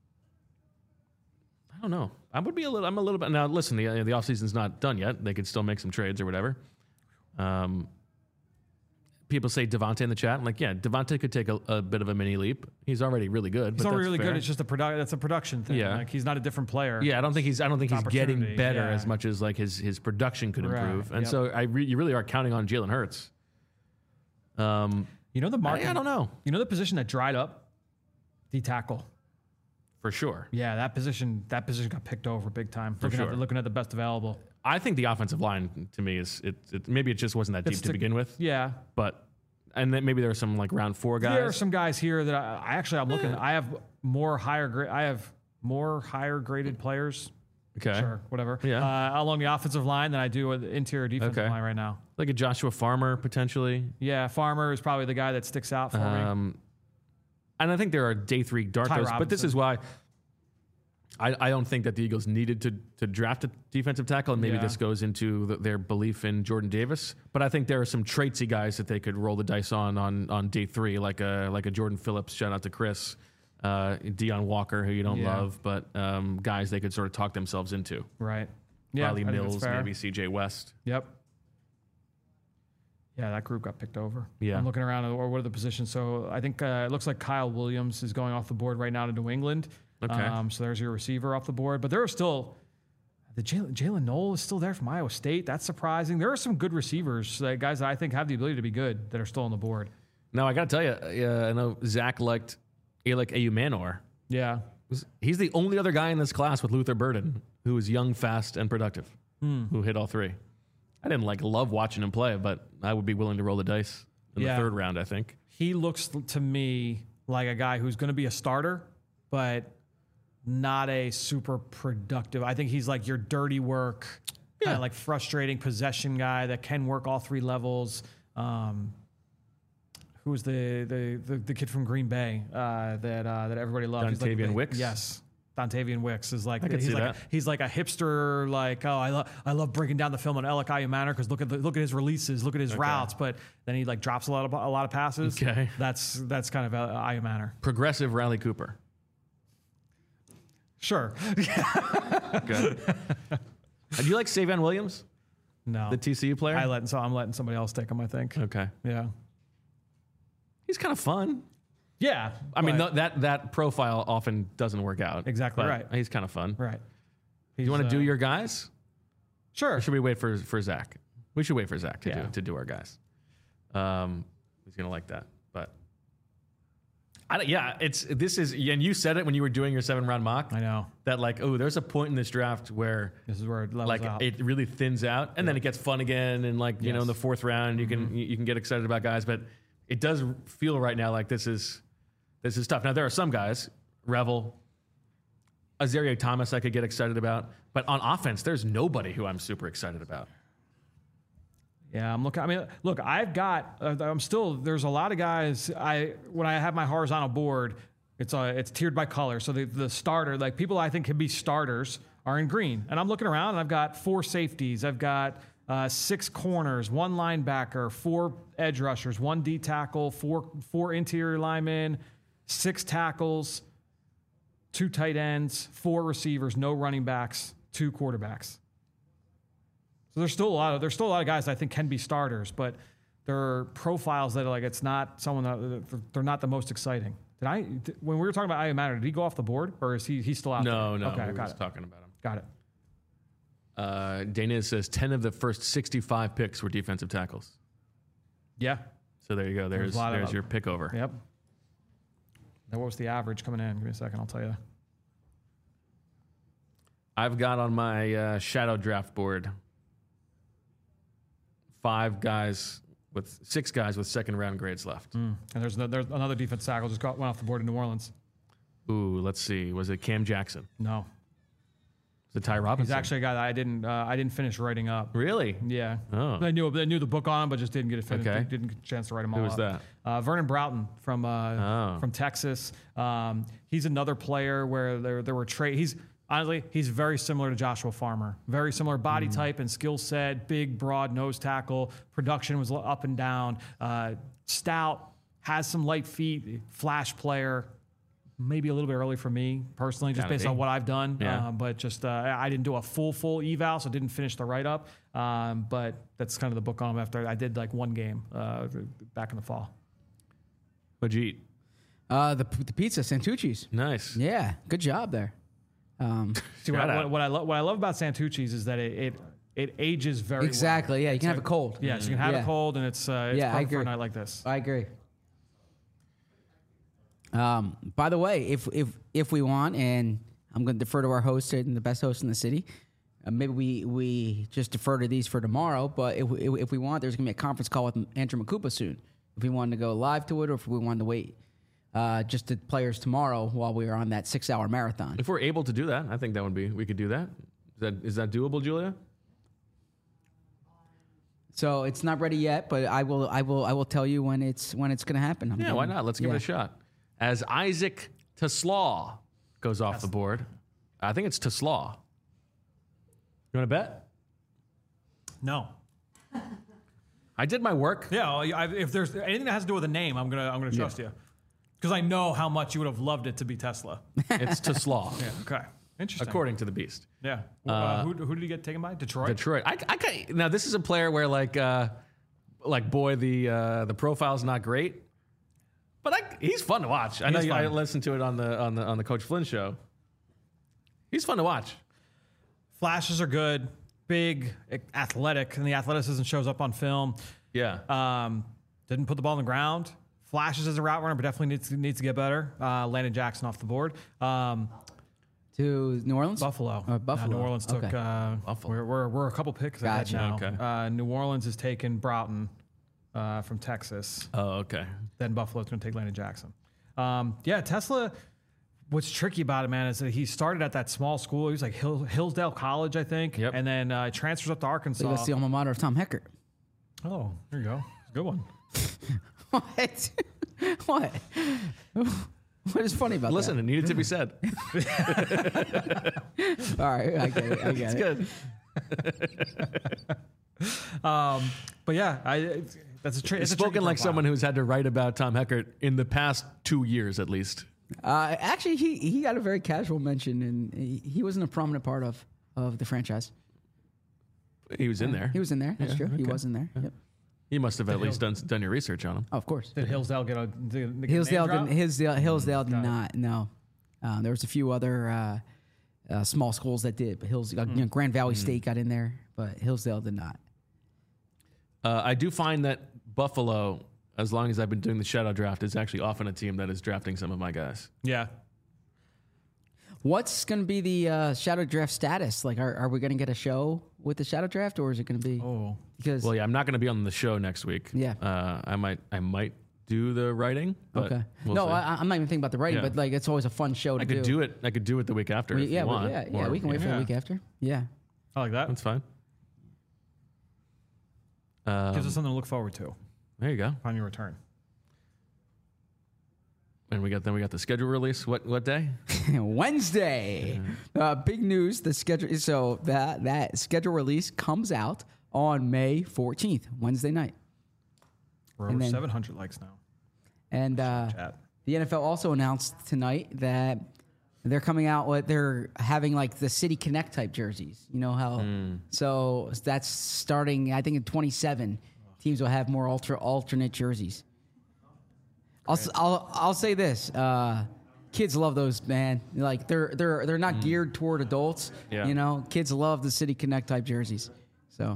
I don't know. I would be a little. I'm a little bit now. Listen, the the offseason's not done yet. They could still make some trades or whatever. Um, people say Devontae in the chat. I'm like, yeah, Devontae could take a, a bit of a mini leap. He's already really good. He's but already that's really fair. good. It's just a product. That's a production thing. Yeah. Like he's not a different player. Yeah, I don't think he's. I don't think It's he's getting opportunity, better yeah. as much as like his his production could Right, improve. And yep. so I re, you really are counting on Jalen Hurts. Um, You know the market. I, I don't know You know the position that dried up, the tackle. for sure. Yeah, that position. That position got picked over big time. looking sure. at the, looking at the best available. I think the offensive line to me is it. it maybe it just wasn't that deep It's to the- begin with, Yeah, but and then maybe there are some like round four guys. there are some guys here that I, I actually I'm looking. I have more higher grade. I have more higher graded players. okay, Sure, whatever. Yeah. Uh, along the offensive line than I do with the interior defensive Okay. line right now. like a Joshua Farmer potentially. Yeah, Farmer is probably the guy that sticks out for me. Um, and I think there are day three darkos, but this Robinson. is why I, I don't think that the Eagles needed to to draft a defensive tackle, and maybe Yeah. this goes into the, their belief in Jordan Davis. But I think there are some traitsy guys that they could roll the dice on on, on day three, like a like a Jordan Phillips. Shout out to Chris, uh, Deion Walker, who you don't Yeah. love, but um, guys they could sort of talk themselves into. Right. Yeah. Riley I think that's Mills, fair. maybe C J West. Yep. Yeah, that group got picked over. Yeah. I'm looking around, or what are the positions? So I think uh, it looks like Kyle Williams is going off the board right now to New England. Okay. Um, so there's your receiver off the board. But there are still, the Jalen, Jalen Noel is still there from Iowa State. That's surprising. There are some good receivers, uh, guys that I think have the ability to be good that are still on the board. Now I got to tell you, uh, I know Zach liked Alec Ayumanor. Yeah. He's the only other guy in this class with Luther Burden who is young, fast, and productive, Hmm. who hit all three. I didn't like love watching him play, but I would be willing to roll the dice in Yeah. the third round, I think. He looks to me like a guy who's going to be a starter, but not a super productive. I think he's like your dirty work, Yeah. kind of like frustrating possession guy that can work all three levels. Um, who was the, the the the kid from Green Bay uh, that uh, that everybody loved? He's like Dontavian the- Wicks? Yes. Dontavian Wicks is like I could he's see like that. he's like a hipster, like, oh, I love I love breaking down the film on Alec Ayumanor because look at the, look at his releases, look at his routes, but then he like drops a lot of a lot of passes. Okay. That's that's kind of uh, Ayumanor. Progressive Riley Cooper. Sure. Good. Do you like Savion Williams, No. the T C U player? I let so I'm letting somebody else take him, I think. okay. Yeah. He's kind of fun. Yeah. I mean, but- th- that that profile often doesn't work out. Exactly but right. He's kind of fun. right. You want to He's, do uh, your guys? Sure. Or should we wait for for Zach? We should wait for Zach to Yeah. do to do our guys. Um, he's gonna like that, but I don't, yeah, it's this is and you said it when you were doing your seven round mock I know. that like oh there's a point in this draft where This is where it levels like out. it really thins out and then it gets fun again and like you know in the Yes. fourth round you can you can get excited about guys, but it does feel right now like this is this is tough. Now there are some guys, Revel, Azaria Thomas I could get excited about, but on offense there's nobody who I'm super excited about. Yeah, I'm looking. I mean, look, I've got. Uh, I'm still. There's a lot of guys. I when I have my horizontal board, it's uh, it's tiered by color. So the the starter, like people I think can be starters, are in green. And I'm looking around, and I've got four safeties. I've got uh, six corners, one linebacker, four edge rushers, one D tackle, four four interior linemen, six tackles, two tight ends, four receivers, no running backs, two quarterbacks. So there's still a lot of there's still a lot of guys that I think can be starters, but there are profiles that are like it's not someone that they're not the most exciting. Did I did, when we were talking about Ayumanor, did he go off the board or is he he's still out No, there? no, Okay, we were got just it. talking about him. Got it. Uh, Dana says ten of the first sixty-five picks were defensive tackles. Yeah. So there you go. There's a lot of there's them. your pick over. Yep. Now what was the average coming in? Give me a second, I'll tell you. I've got on my uh, shadow draft board five guys with six guys with second round grades left. Mm. And there's no, there's another defense tackle just got went off the board in New Orleans. Ooh, let's see. Was it Cam Jackson? No. Was it Ty Robinson? He's actually a guy that I didn't uh, I didn't finish writing up. Really? Yeah. Oh. I knew I knew the book on him, but just didn't get it finished. Okay. Didn't get a chance to write them all Who was up. that? Uh, Vernon Broughton from uh, Oh. from Texas. Um, he's another player where there there were trade. He's honestly he's very similar to Joshua Farmer. Very similar body Mm. type and skill set. Big, broad nose tackle. Production was up and down. Uh, stout. Has some light feet. Flash player. Maybe a little bit early for me personally, just Gotta based be. on what I've done. Yeah. Uh, but just uh, I didn't do a full full eval, so didn't finish the write up. Um, but that's kind of the book on him after I did like one game uh, back in the fall. What'd you eat? Uh, the the pizza, Santucci's. Nice. Yeah, good job there. Um, See, what, Shout I, out. what, what I lo- what I love about Santucci's is that it it, it ages very exactly. well. Yeah, you can It's have a cold. Yeah, so you can have Yeah. a cold, and it's uh, it's Yeah, I perfect for a agree. night like this. I agree. Um, by the way, if if if we want, and I'm going to defer to our host and the best host in the city, uh, maybe we we just defer to these for tomorrow. But if we, if we want, there's going to be a conference call with Andrew Makupa soon. If we wanted to go live to it, or if we wanted to wait uh, just to players tomorrow while we are on that six hour marathon. If we're able to do that, I think that would be, we could do that. Is that, is that doable, Julia? So it's not ready yet, but I will I will I will tell you when it's when it's going to happen. I'm Yeah, why going- not? Let's give yeah. it a shot. As Isaac Teslaw goes off the board, I think it's Teslaw. You want to bet? No. I did my work. Yeah, I, if there's anything that has to do with a name, I'm gonna I'm gonna trust you because I know how much you would have loved it to be Tesla. It's Teslaw, Yeah. Okay. Interesting. according to the Beast. Yeah. Uh, who, who did he get taken by? Detroit. Detroit. I, I can now this is a player where like, uh, like boy, the uh, the profile's not great, but I, he's fun to watch. I He know is you, I fun. listened to it on the on the on the Coach Flynn show. He's fun to watch. Flashes are good, big, athletic, and the athleticism shows up on film. Yeah. Um, didn't put the ball on the ground. Flashes as a route runner, but definitely needs to, needs to get better. Uh, Landon Jackson off the board. Um, To New Orleans? Buffalo. Oh, Buffalo. Uh, New Orleans took. Okay. Uh, Buffalo. We're, we're we're a couple picks ahead Gotcha. now. Okay. Uh, New Orleans has taken Broughton uh, from Texas. oh, okay. Then Buffalo's going to take Landon Jackson. Um, yeah, Tesla. What's tricky about it, man, is that he started at that small school. He was like Hill, Hillsdale College, I think. Yep. And then uh, transfers up to Arkansas. That's the alma mater of Tom Heckert. Oh, there you go. It's a good one. What? What? What is funny about Listen, it needed to be said. that? All right, I get it. I get It's it. good. Um, but yeah, I, that's a, tri- It's it's a tricky spoken like profile. someone who's had to write about Tom Heckert in the past two years at least. Uh, actually, he he got a very casual mention, and he, he wasn't a prominent part of, of the franchise. He was in there. He was in there. That's Yeah, true. He okay. was in there. Yep. You must have at least done done your research on him. Oh, of course. Did Hillsdale get a did, did Hillsdale get a name didn't. Hillsdale, Hillsdale did Got it. not. No, uh, there was a few other uh, uh, small schools that did, but Hills, uh, you know, Grand Valley State got in there, but Hillsdale did not. Uh, I do find that Buffalo, as long as I've been doing the shadow draft, is actually often a team that is drafting some of my guys. Yeah. What's going to be the uh, shadow draft status? Like, are, are we going to get a show with the shadow draft, or is it going to be Oh. because? Well, yeah, I'm not going to be on the show next week. Yeah. uh, I might I might do the writing. But okay. we'll no, see. I, I'm not even thinking about the writing, Yeah. but like, it's always a fun show to I could do. do it. I could do it the week after. We- if yeah, you we- want. yeah, yeah. Or- We can wait for yeah. the week after. Yeah. I like that. That's fine. Um, Gives us something to look forward to there you go. upon your return. And we got then we got the schedule release. What what day? Wednesday. Uh, big news. The schedule. So that that schedule release comes out on May fourteenth, Wednesday night. We're And over then- seven hundred likes now. And uh, Chat. the N F L also announced tonight that they're coming out with they're having like the City Connect type jerseys. You know how? So that's starting. I think in twenty-seven, teams will have more ultra alternate jerseys. I'll, s- I'll I'll say this. Uh, kids love those, man. Like they're they're they're not geared toward adults. Yeah. You know, kids love the City Connect type jerseys. So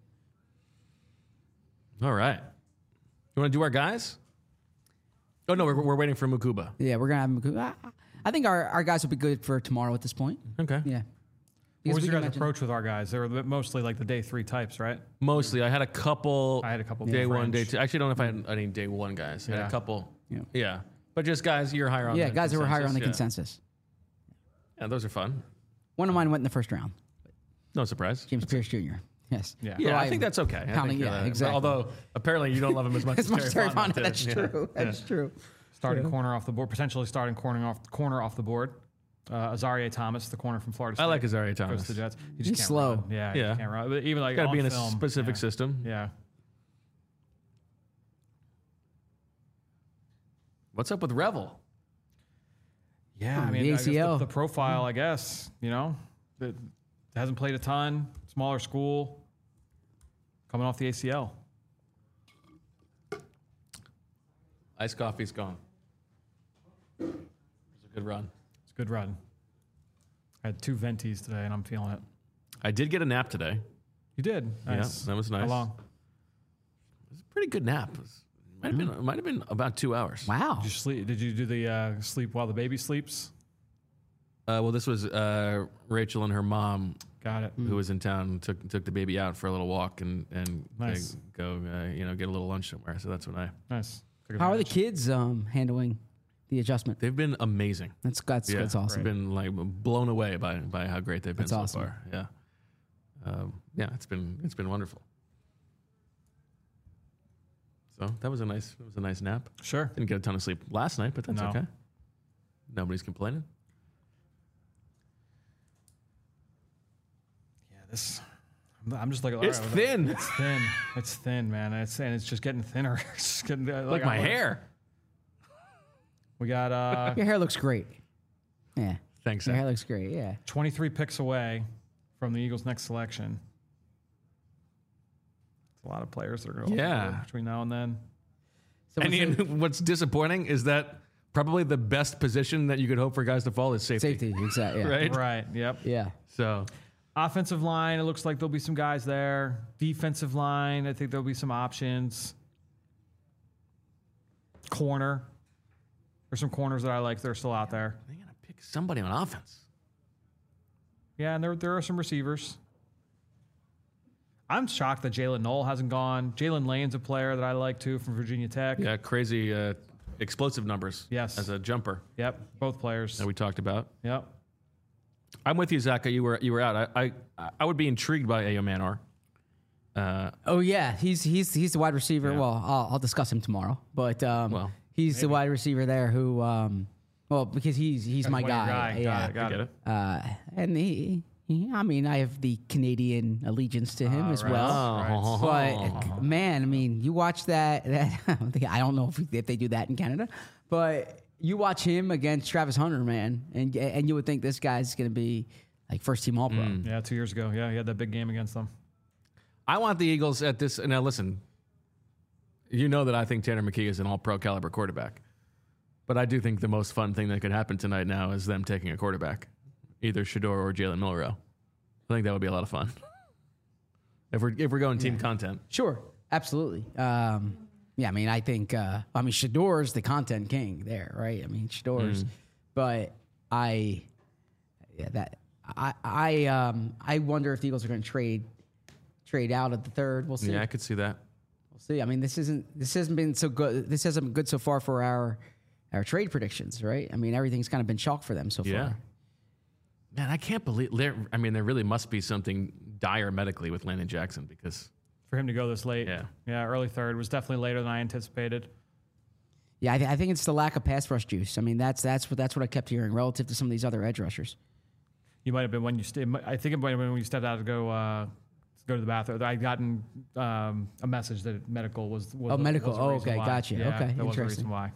All right. You want to do our guys? Oh no, we're, we're waiting for Mukuba. yeah, we're gonna have them. I, I think our, our guys will be good for tomorrow at this point. Okay. Yeah. What Because was we your can guys' imagine- approach with our guys? They were mostly like the day three types, right? Mostly, I had a couple. I had a couple day one, day French. two. Actually, I don't know if I had any day one guys. I had Yeah. a couple. Yeah. Yeah. But just guys you're higher on. Yeah, the guys that were higher on the yeah. consensus. Yeah, those are fun. One of mine went in the first round. No surprise. James Pierce Junior Yes. Yeah. Yeah, Well, I think that's okay. I pounding- think, yeah, uh, exactly. Although apparently you don't love him as much as, As much as Terry Fontenot Fontenot. did. That's Yeah. true. That's true. Starting True. corner off the board, potentially starting corner off corner off the board. Uh, Azaria Thomas, the corner from Florida State. I like Azaria Goes Thomas. to the Jets. He just He's can't slow. run. Yeah, Yeah. he can't run. But even like Got to on be in a film, specific yeah. system. Yeah. What's up with Revel? Yeah, I Hmm, mean, the I guess A C L. The, the profile, I guess, you know, it hasn't played a ton, smaller school, coming off the A C L. Iced coffee's gone. It was a good run. It's a good run. I had two ventis today, and I'm feeling it. I did get a nap today. You did. Nice. Yeah, that was nice. How long? It was a pretty good nap. It was- might have been it might have been about two hours. Wow. Did you sleep? Did you do the uh, sleep while the baby sleeps? Uh, well, this was uh, Rachel and her mom, Got it. who was in town, took took the baby out for a little walk and and Nice. uh, go uh, you know get a little lunch somewhere. So that's when I. Nice. Took How are the advantage. kids um, handling the adjustment? They've been amazing. That's that's, Yeah, that's awesome. I've been like blown away by by how great they've been That's so awesome. far. Yeah, um, yeah, it's been it's been wonderful. So that was a nice it was a nice nap. Sure. Didn't get a ton of sleep last night, but that's No. okay. Nobody's complaining. Yeah, this. I'm- I'm just like, all It's right, thin. It's thin. It's thin, man. It's and it's just getting thinner. It's just getting, uh, Like like my I'm- hair. We got uh, Your hair looks great. Yeah. Thanks. Your Zach. hair looks great. Yeah. twenty-three picks away from the Eagles' next selection. It's a lot of players that are going to Yeah. between now and then. Someone And, said- and what's disappointing is that probably the best position that you could hope for guys to fall is safety. safety. Exactly. Yeah. Right? Right. Yep. Yeah. So Offensive line, it looks like there'll be some guys there. Defensive line, I think there'll be some options. Corner. There's some corners that I like that are still out there. they gotta pick somebody on offense. Yeah, and there, there are some receivers. I'm shocked that Jalen Knoll hasn't gone. Jalen Lane's a player that I like too from Virginia Tech. Yeah, crazy uh, explosive numbers. Yes. As a jumper Yep, both players. that we talked about. Yep. I'm with you, Zach. You were you were out. I I, I would be intrigued by Ayo Manor. Uh, Oh yeah, he's he's he's the wide receiver. Yeah. Well, I'll, I'll discuss him tomorrow. But um, Well, he's the wide receiver there who, um, well, because he's he's That's my one of your guy. guy. Yeah. Got it. Got I get it. it. Uh, and he, he, I mean, I have the Canadian allegiance to him Ah, as right. well. Right. But man, I mean, you watch that. that I don't think- I don't know if, if they do that in Canada, but you watch him against Travis Hunter, man, and and you would think this guy's going to be like first team All Pro. Mm. Yeah, two years ago. Yeah, he had that big game against them. I want the Eagles at this. Now, listen, you know that I think Tanner McKee is an all pro caliber quarterback. But I do think the most fun thing that could happen tonight now is them taking a quarterback, either Shador or Jalen Milrow. I think that would be a lot of fun. if we're if we're going team content. Sure, absolutely. Um, yeah, I mean, I think, uh, I mean, Shador's the content king there, right? I mean, Shador's, Mm. but I, yeah, that I, I, um, I wonder if the Eagles are going to trade, trade out at the third. We'll see. Yeah, I could see that. We'll see. I mean, this isn't, this hasn't been so good. This hasn't been good so far for our, our trade predictions, right? I mean, everything's kind of been chalk for them so Yeah. far. Man, I can't believe there. I mean, there really must be something dire medically with Landon Jackson because For him to go this late. Yeah. Yeah, early third was definitely later than I anticipated. Yeah, I, th- I think it's the lack of pass rush juice. I mean, that's that's what that's what I kept hearing relative to some of these other edge rushers. You might have been when you. St- I think it might have been when you stepped out to go uh, to go to the bathroom. I'd gotten um, a message that medical was. was Oh, the- medical. was the Oh, reason okay, why. gotcha. Yeah, Okay, that was the interesting. reason why.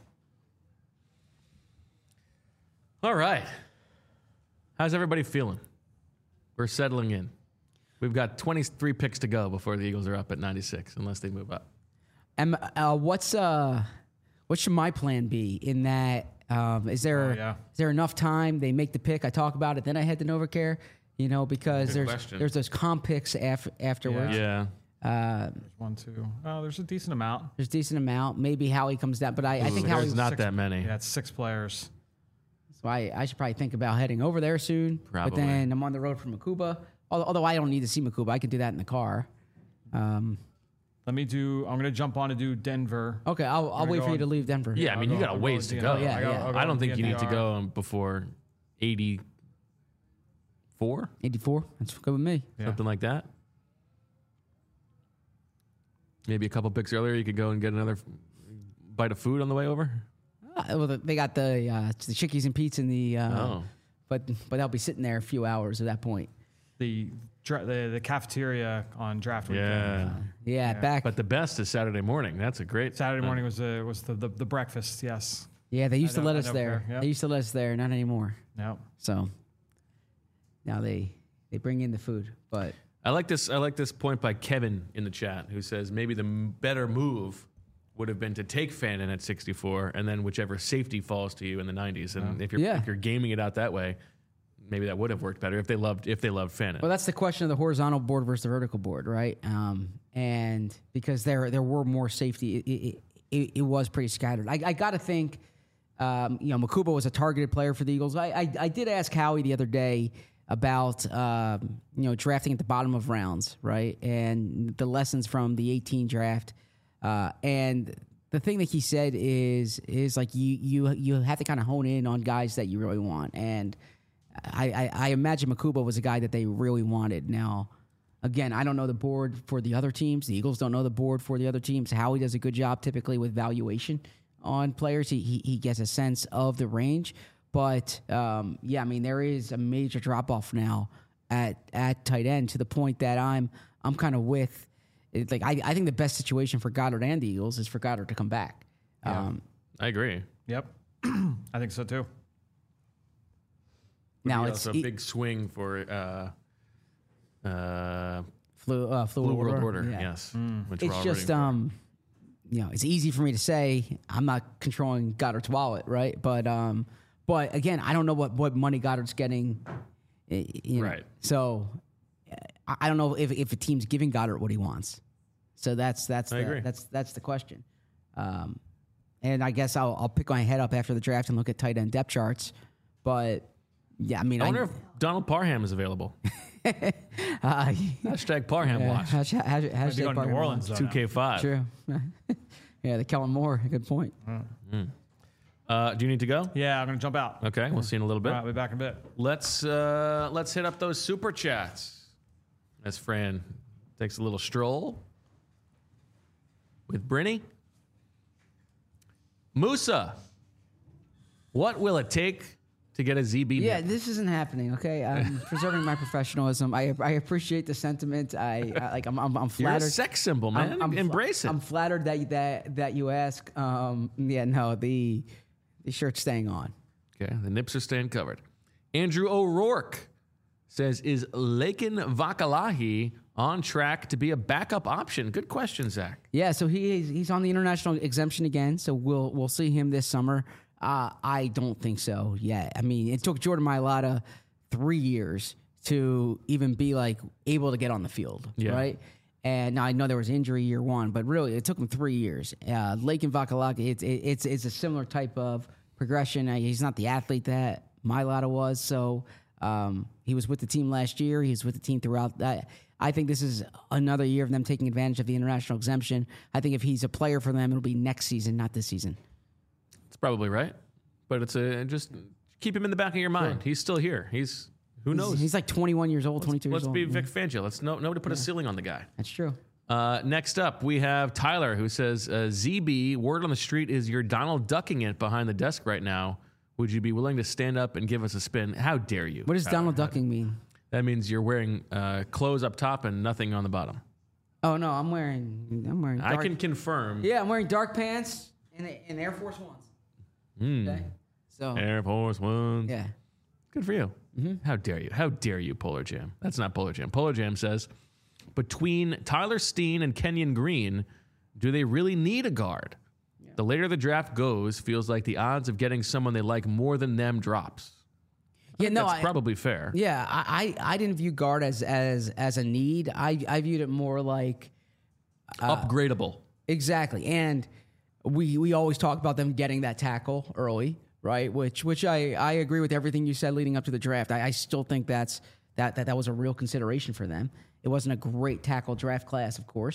All right. How's everybody feeling? We're settling in. We've got twenty-three picks to go before the Eagles are up at ninety-six, unless they move up. And uh, what's uh, what should my plan be in that? Um, is there Oh, yeah. is there enough time? They make the pick. I talk about it, then I head to NovaCare. You know, because Good there's question. there's those comp picks af- afterwards. Yeah. Uh, There's one, two. Oh, there's a decent amount. there's a decent amount. Maybe Howie comes down, but I, I think Ooh, Howie. there's not Six- that many. Yeah, it's six players. So I, I should probably think about heading over there soon. But Probably. then I'm on the road from Makuba. Although, although I don't need to see Makuba, I can do that in the car. Um, Let me do. I'm gonna jump on to do Denver. Okay, I'll, I'll wait for you to leave Denver. Yeah, I mean, I'll you go- got a I'll ways go to with go. D N R. Yeah, I, got, yeah. I'll go I don't with think you need to D N R. go before eighty-four, eighty-four. That's good with me. Yeah. something like that. Maybe a couple picks earlier, you could go and get another f- bite of food on the way over. Uh, well, the- they got the uh, the Chickies and Pete's in the. Uh, Oh. But but I'll be sitting there a few hours at that point. The, dra- the the cafeteria on draft weekend. Yeah. Yeah, Yeah. back. But the best is Saturday morning. That's a great Saturday morning was the was the, the, the breakfast. Yes. yeah, they used I to don't- let I us don't there. care, yep. They used to let us there, not anymore. No. So now they they bring in the food, but I like this. I like this point by Kevin in the chat, who says maybe the m- better move would have been to take Fannin at sixty-four, and then whichever safety falls to you in the nineties. And if you're Yeah. if you're gaming it out that way, maybe that would have worked better if they loved if they loved Fannin. well, that's the question of the horizontal board versus the vertical board, right? Um, and because there there were more safety, it it, it, it was pretty scattered. I, I got to think, um, you know, Makuba was a targeted player for the Eagles. I I, I did ask Howie the other day about um, you know drafting at the bottom of rounds, right, and the lessons from the eighteen draft. Uh, and the thing that he said is is like you you you have to kind of hone in on guys that you really want. And I, I, I imagine Makuba was a guy that they really wanted. Now, again, I don't know the board for the other teams. The Eagles don't know the board for the other teams. Howie does a good job typically with valuation on players. He he, he gets a sense of the range. But um, yeah, I mean there is a major drop off now at at tight end to the point that I'm I'm kind of with. It's like I, I think the best situation for Goddard and the Eagles is for Goddard to come back. Um, I agree. Yep. I think so too. now Be it's also a e- big swing for uh, uh, flu, uh, flu, Blue World order. Order. Yeah. Yes, which we're It's all just rooting for. um, you know, it's easy for me to say I'm not controlling Goddard's wallet, right? But um, but again, I don't know what, what money Goddard's getting. eh, You know? Right. So I I don't know if if a team's giving Goddard what he wants. So that's that's I the, agree. that's that's the question. Um, and I guess I'll I'll pick my head up after the draft and look at tight end depth charts. But yeah, I mean, I wonder if Donald Parham is available. uh, Hashtag Parham yeah, watch. hashtag, hashtag, Might be going to Parham New Orleans though. Two now. K five. True. Yeah, the Kellen Moore. Good point. Uh, do you need to go? Yeah, I'm gonna jump out. Okay, we'll see you in a little bit. All right, we'll be back in a bit. Let's uh, let's hit up those super chats. As Fran takes a little stroll with Brinny. Musa, what will it take to get a Z B? Yeah, nip? this isn't happening. Okay, I'm preserving my professionalism. I I appreciate the sentiment. I, I like. I'm I'm, I'm You're a flattered. sex symbol, man. I'm, I'm, Embrace it. I'm flattered that you, that that you ask. Um, yeah, no, the the shirt's staying on. Okay, the nips are staying covered. Andrew O'Rourke says, is Lakin Vakalahi on track to be a backup option? Good question, Zach. Yeah, so he he's on the international exemption again. So we'll we'll see him this summer. Uh, I don't think so yet. I mean, it took Jordan Mailata three years to even be like able to get on the field, Yeah. right? And now I know there was injury year one, but really it took him three years. Uh, Lakin Vakalaki, it's it, it's it's a similar type of progression. Uh, he's not the athlete that Mailata was, so um, he was with the team last year. He was with the team throughout that. I think this is another year of them taking advantage of the international exemption. I think if he's a player for them, it'll be next season, not this season. It's probably right, but it's a just keep him in the back of your mind. He's still here. He's who knows. He's, he's like twenty-one years old, twenty-two Let's years old. be Yeah, Vic Fangio. Let's no nobody put a ceiling on the guy. that's true. Uh, next up, we have Tyler, who says, uh, Z B, word on the street is you're Donald ducking it behind the desk right now. Would you be willing to stand up and give us a spin? How dare you? What does Tyler? Donald ducking mean? That means you're wearing uh, clothes up top and nothing on the bottom. Oh no, I'm wearing I'm wearing dark, I can confirm. yeah, I'm wearing dark pants and, and Air Force Ones. Mm. Okay, so Air Force Ones. yeah, Good for you. How dare you? How dare you, Polar Jam? That's not Polar Jam. Polar Jam says, between Tyler Steen and Kenyon Green, do they really need a guard? The later the draft goes, feels like the odds of getting someone they like more than them drops. yeah, no, That's I, probably fair. yeah, I, I I didn't view guard as as as a need. I I viewed it more like Upgradable. exactly, and we we always talk about them getting that tackle early, right? Which which I I agree with everything you said leading up to the draft. I, I still think that's that that that was a real consideration for them. It wasn't a great tackle draft class, of course.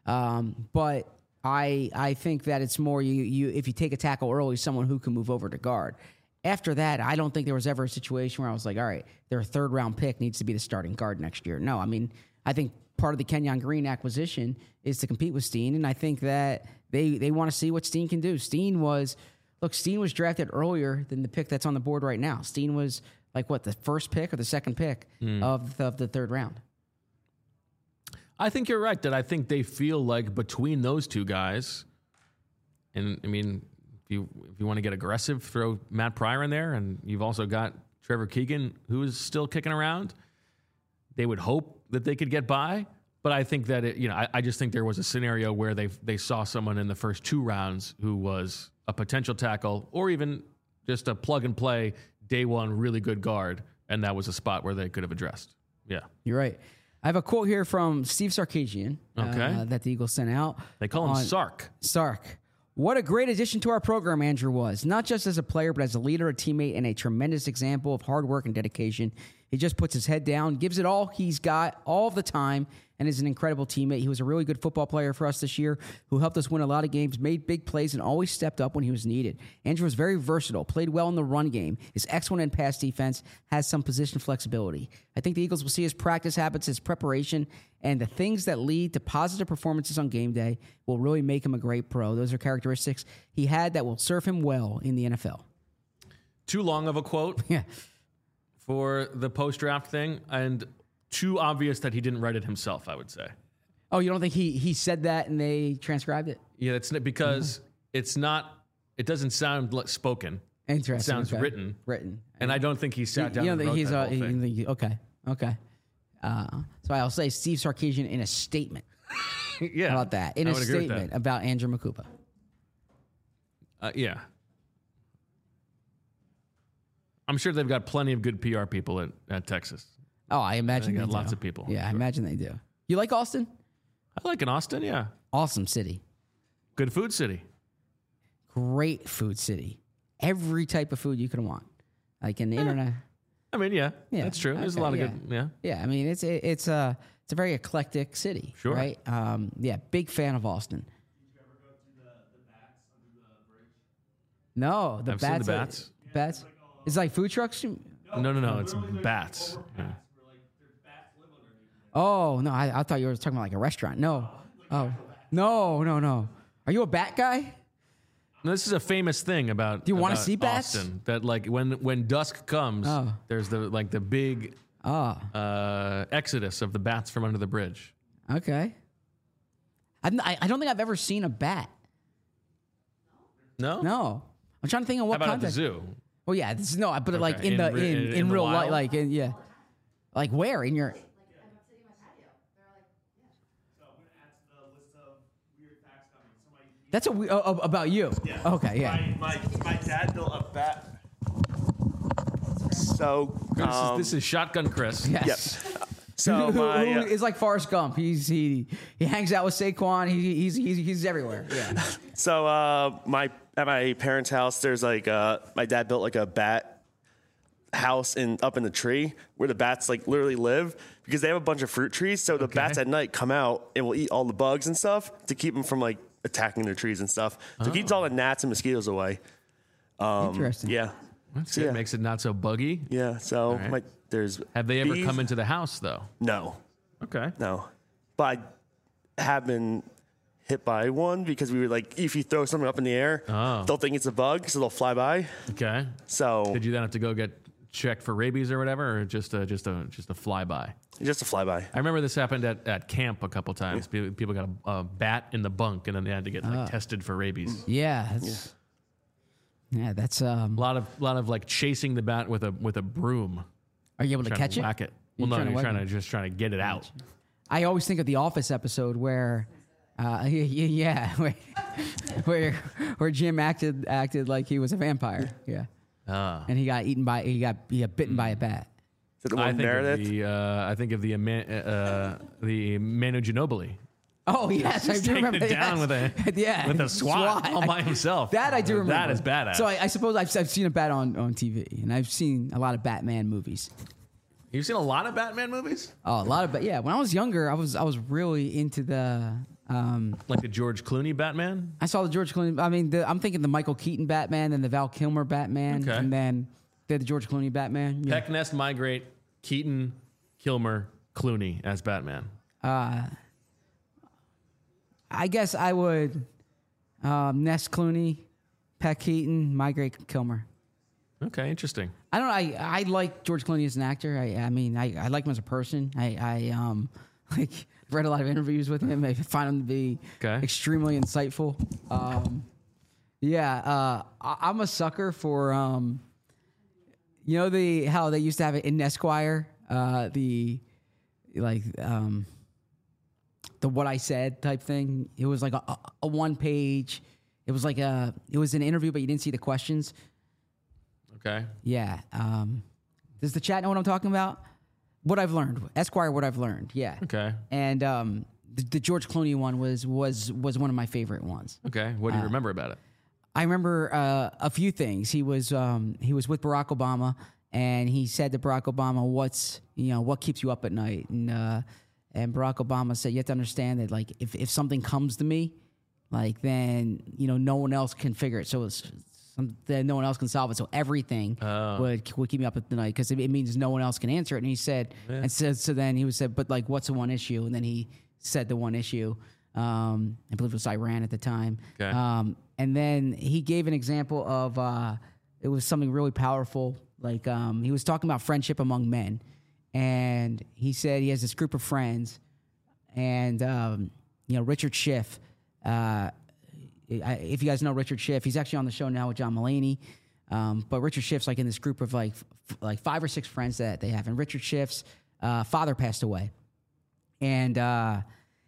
Um, but I I think that it's more you you if you take a tackle early, someone who can move over to guard. After that, I don't think there was ever a situation where I was like, all right, their third round pick needs to be the starting guard next year. No, I mean, I think part of the Kenyon Green acquisition is to compete with Steen, and I think that they they want to see what Steen can do. Steen was, look, Steen was drafted earlier than the pick that's on the board right now. Steen was like, what, the first pick or the second pick mm. of, of the third round? I think you're right, that I think they feel like between those two guys, and I mean, if you if you want to get aggressive, throw Matt Pryor in there, and you've also got Trevor Keegan, who is still kicking around. They would hope that they could get by, but I think that it, you know, I, I just think there was a scenario where they they saw someone in the first two rounds who was a potential tackle, or even just a plug and play day one really good guard, and that was a spot where they could have addressed. Yeah, you're right. I have a quote here from Steve Sarkisian okay. uh, that the Eagles sent out. They call him Sark. Sark. What a great addition to our program Andrew was, not just as a player, but as a leader, a teammate, and a tremendous example of hard work and dedication. He just puts his head down, gives it all he's got all the time, and is an incredible teammate. He was a really good football player for us this year who helped us win a lot of games, made big plays, and always stepped up when he was needed. Andrew was very versatile, played well in the run game, is excellent in pass defense, has some position flexibility. I think the Eagles will see his practice habits, his preparation, and the things that lead to positive performances on game day will really make him a great pro. Those are characteristics he had that will serve him well in the N F L. Too long of a quote yeah. for the post-draft thing, and too obvious that he didn't write it himself, I would say. Oh, you don't think he he said that and they transcribed it? Yeah, it's because mm-hmm. it's not, it doesn't sound like spoken. Interesting. It sounds okay. written. Written. And I don't think he sat down you and think wrote he's that a, whole thing. you think, okay, okay. Uh, so I'll say Steve Sarkisian in a statement. yeah. How about that? In I a would agree with statement that. about Andrew Makupa. Uh, yeah. I'm sure they've got plenty of good P R people at, at Texas. Oh, I imagine they they got do. lots of people. Yeah, sure. I imagine they do. You like Austin? I like an Austin, yeah. Awesome city. Good food city. Great food city. Every type of food you can want. Like in the eh. internet. I mean, yeah, yeah, that's true. There's okay, a lot of yeah. good, yeah. Yeah, I mean, it's it, it's a it's a very eclectic city, sure. right? Um, yeah, big fan of Austin. Did you ever go to the, the bats under the bridge? No, the I've bats. seen the bats. Are, bats. It's like food trucks. No, no, no, no it's bats. Yeah. Oh no, I, I thought you were talking about like a restaurant. No, oh no, no, no. Are you a bat guy? No, this is a famous thing about. Do you want to about see bats? Austin, that like when when dusk comes, Oh. there's the like the big Oh, uh, exodus of the bats from under the bridge. okay. I'm, I I don't think I've ever seen a bat. No, No, I'm trying to think of what How about context. at the zoo? Oh yeah, this is no, I put it Okay. like in, In the re- in in- in, in the real life, wild? like in, yeah, like where in your. That's a we- oh, oh, about you. Yeah. Okay, yeah. My, my, my dad built a bat. So, This, um, is, this is Shotgun Chris. Yes. yep. So who, my who uh, is like Forrest Gump. He's he he hangs out with Saquon. He, he's he's he's everywhere. Yeah. so uh, my at my parents' house, there's like uh, my dad built like a bat house in up in the tree where the bats like literally live because they have a bunch of fruit trees. So the Okay. bats at night come out and will eat all the bugs and stuff to keep them from like attacking their trees and stuff. So it keeps all the gnats and mosquitoes away. Um, Interesting. Yeah. That's So, good. yeah. Makes it not so buggy. Yeah. So right. my there's Have they ever bees. come into the house though? No. Okay. No, but I have been hit by one because we were like, if you throw something up in the air, Oh. they'll think it's a bug, so they'll fly by. Okay. So Did you then have to go get checked for rabies or whatever, or just a, just a just a flyby? just a flyby. I remember this happened at, at camp a couple times. People, people got a, a bat in the bunk, and then they had to get like, tested for rabies. Yeah. That's, yeah. That's um. A lot of lot of like chasing the bat with a with a broom. Are you able to Trying catch to it? whack it. You're Well, no, trying to you're whack trying it? to just trying to get it out. I always think of the Office episode where, uh, yeah, where, where where Jim acted acted like he was a vampire. Yeah. Ah. And he got eaten by he got he got bitten by a bat. Is it the I one think Meredith? of the uh, I think of the Eman- uh, the Manu Ginobili. Oh yes, I do taking remember it down yes. with a- yeah with a SWAT, SWAT. all by himself. That I do remember. That is badass. So I, I suppose I've, I've seen a bat on, on T V, and I've seen a lot of Batman movies. You've seen a lot of Batman movies? Oh, a lot of bat. Yeah, when I was younger, I was I was really into the Um, Like the George Clooney Batman? I saw the George Clooney. I mean, the, I'm thinking the Michael Keaton Batman, then the Val Kilmer Batman, Okay. and then the George Clooney Batman. Yeah. Peck Nest Migrate, Keaton, Kilmer, Clooney as Batman. Uh, I guess I would um, Ness Clooney, Peck Keaton, Migrate Kilmer. Okay, interesting. I don't know. I, I like George Clooney as an actor. I, I mean, I, I like him as a person. I, I um like read a lot of interviews with him. I find him to be Okay. extremely insightful. Um, yeah, uh, I, I'm a sucker for um, you know the how they used to have it in Esquire, uh, the like um, the what I said type thing. It was like a, a, a one page. It was like a it was an interview, but you didn't see the questions. Okay. Yeah. Um, does the chat know what I'm talking about? What I've learned, Esquire. What I've learned. Yeah. Okay. And um, the, the George Clooney one was was was one of my favorite ones. Okay. What do you remember about it? I remember uh, a few things. He was um, he was with Barack Obama, and he said to Barack Obama, "What's you know what keeps you up at night?" And uh, and Barack Obama said, "You have to understand that like if if something comes to me, like then you know no one else can figure it. So it's." That no one else can solve it, so everything Oh. would would keep me up at the night because it, it means no one else can answer it. And he said, Yeah. and said, so then he was said, but like, what's the one issue? And then he said the one issue. Um, I believe it was Iran at the time. Okay. Um, and then he gave an example of uh, it was something really powerful. Like um, he was talking about friendship among men, and he said he has this group of friends, and um, you know Richard Schiff. Uh, I, if you guys know Richard Schiff, he's actually on the show now with John Mulaney. Um, but Richard Schiff's like in this group of like f- like five or six friends that they have, and Richard Schiff's uh, father passed away, and uh,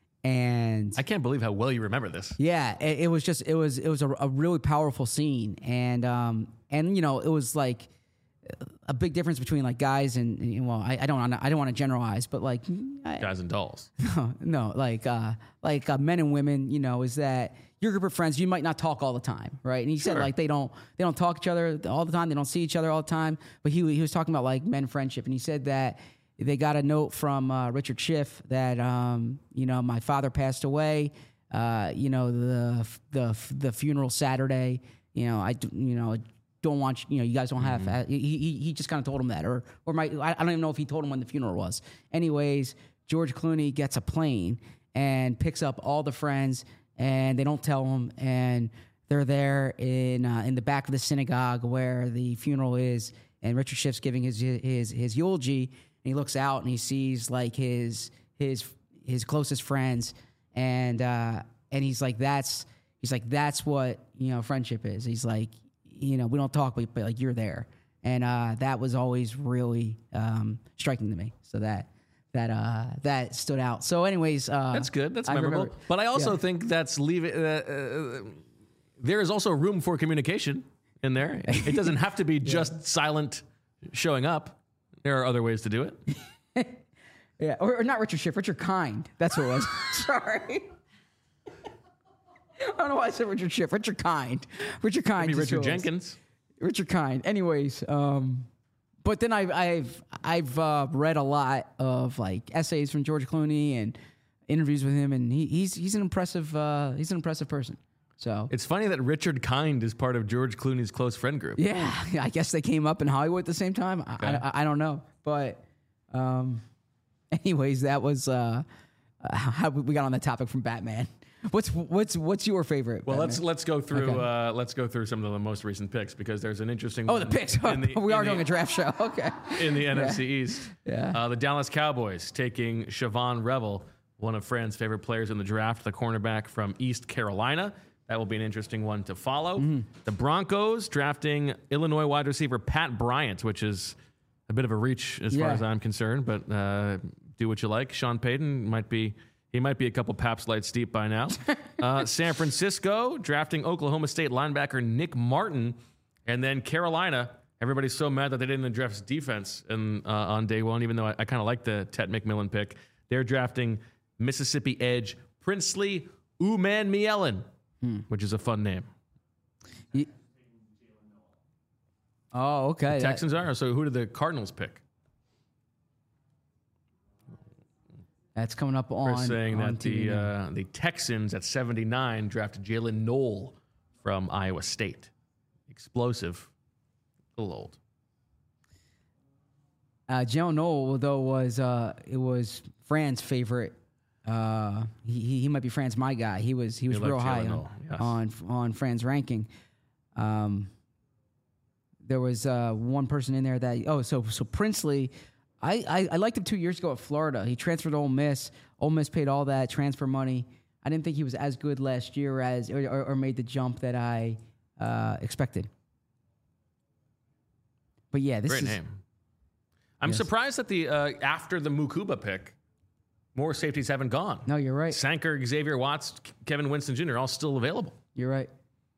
and I can't believe how well you remember this. yeah, it, it was just it was it was a, a really powerful scene, and um, and you know it was like a big difference between like guys and, and well, I, I don't wanna, I don't want to generalize, but like I, Guys and dolls. no, no, like uh, like uh, men and women, you know, is that your group of friends, you might not talk all the time, right? And he said Sure. like they don't they don't talk to each other all the time, they don't see each other all the time. But he he was talking about like men friendship, and he said that they got a note from uh, Richard Schiff that um, you know my father passed away. Uh, you know the the the funeral Saturday. You know I d- you know don't want you know you guys don't have. Uh, he he, he just kind of told him that, or or my I, I don't even know if he told him when the funeral was. Anyways, George Clooney gets a plane and picks up all the friends, and they don't tell him, and they're there in uh, in the back of the synagogue where the funeral is, and Richard Schiff's giving his his his eulogy, and he looks out and he sees like his his his closest friends, and uh, and he's like that's he's like that's what you know friendship is. He's like you know we don't talk, but, but like you're there, and uh, that was always really um, striking to me. So that. That uh that stood out. So, anyways, uh, That's good. That's I memorable. remember- But I also yeah. think that's leave it. Uh, uh, there is also room for communication in there. It doesn't have to be just silent showing up. There are other ways to do it. Yeah, or, or not Richard Schiff, Richard Kind. That's who it was. Sorry. I don't know why I said Richard Schiff. Richard Kind. Richard Kind. Maybe is who Richard it was. Jenkins. Richard Kind. Anyways, um, but then I've I've I've uh, read a lot of like essays from George Clooney and interviews with him, and he, he's he's an impressive uh, he's an impressive person. So It's funny that Richard Kind is part of George Clooney's close friend group. yeah, I guess they came up in Hollywood at the same time. I, Okay. I, I don't know, but um, anyways, that was uh, how we got on the topic from Batman. What's what's what's your favorite? Well, Batman? let's let's go through Okay. uh, let's go through some of the most recent picks because there's an interesting. Oh, one the picks. in the- we in are the- doing a draft show. Okay. in the N F C East. Yeah. Uh, the Dallas Cowboys taking Siobhan Revel, one of Fran's favorite players in the draft, the cornerback from East Carolina. That will be an interesting one to follow. Mm-hmm. The Broncos drafting Illinois wide receiver Pat Bryant, which is a bit of a reach as far Yeah. as I'm concerned, but uh, do what you like. Sean Payton might be he might be a couple Paps Lights deep by now. uh, San Francisco drafting Oklahoma State linebacker Nick Martin, and then Carolina. Everybody's so mad that they didn't draft defense in, uh, on day one, even though I, I kind of like the Tet McMillan pick. They're drafting Mississippi edge Princely Umanmielen, hmm. which is a fun name. Ye- Oh, okay. That- Texans are. So who did the Cardinals pick? That's coming up on. Chris saying on that T V the now. uh, the Texans at seventy-nine drafted Jalen Knoll from Iowa State. Explosive, a little old. Uh, Jalen Knoll, though, was uh, it was Fran's favorite. Uh, he, he he might be Fran's my guy. He was he was You real like high Jalen on, Knoll, yes. on on Fran's ranking. Um, there was uh, one person in there that oh so so Princely. I, I, I liked him two years ago at Florida. He transferred to Ole Miss. Ole Miss paid all that transfer money. I didn't think he was as good last year as or, or, or made the jump that I uh, expected. But yeah, this Great is name. I'm Yes. surprised that the uh, after the Mukuba pick, more safeties haven't gone. no, you're right. Sanker, Xavier Watts, Kevin Winston Junior all still available. You're right.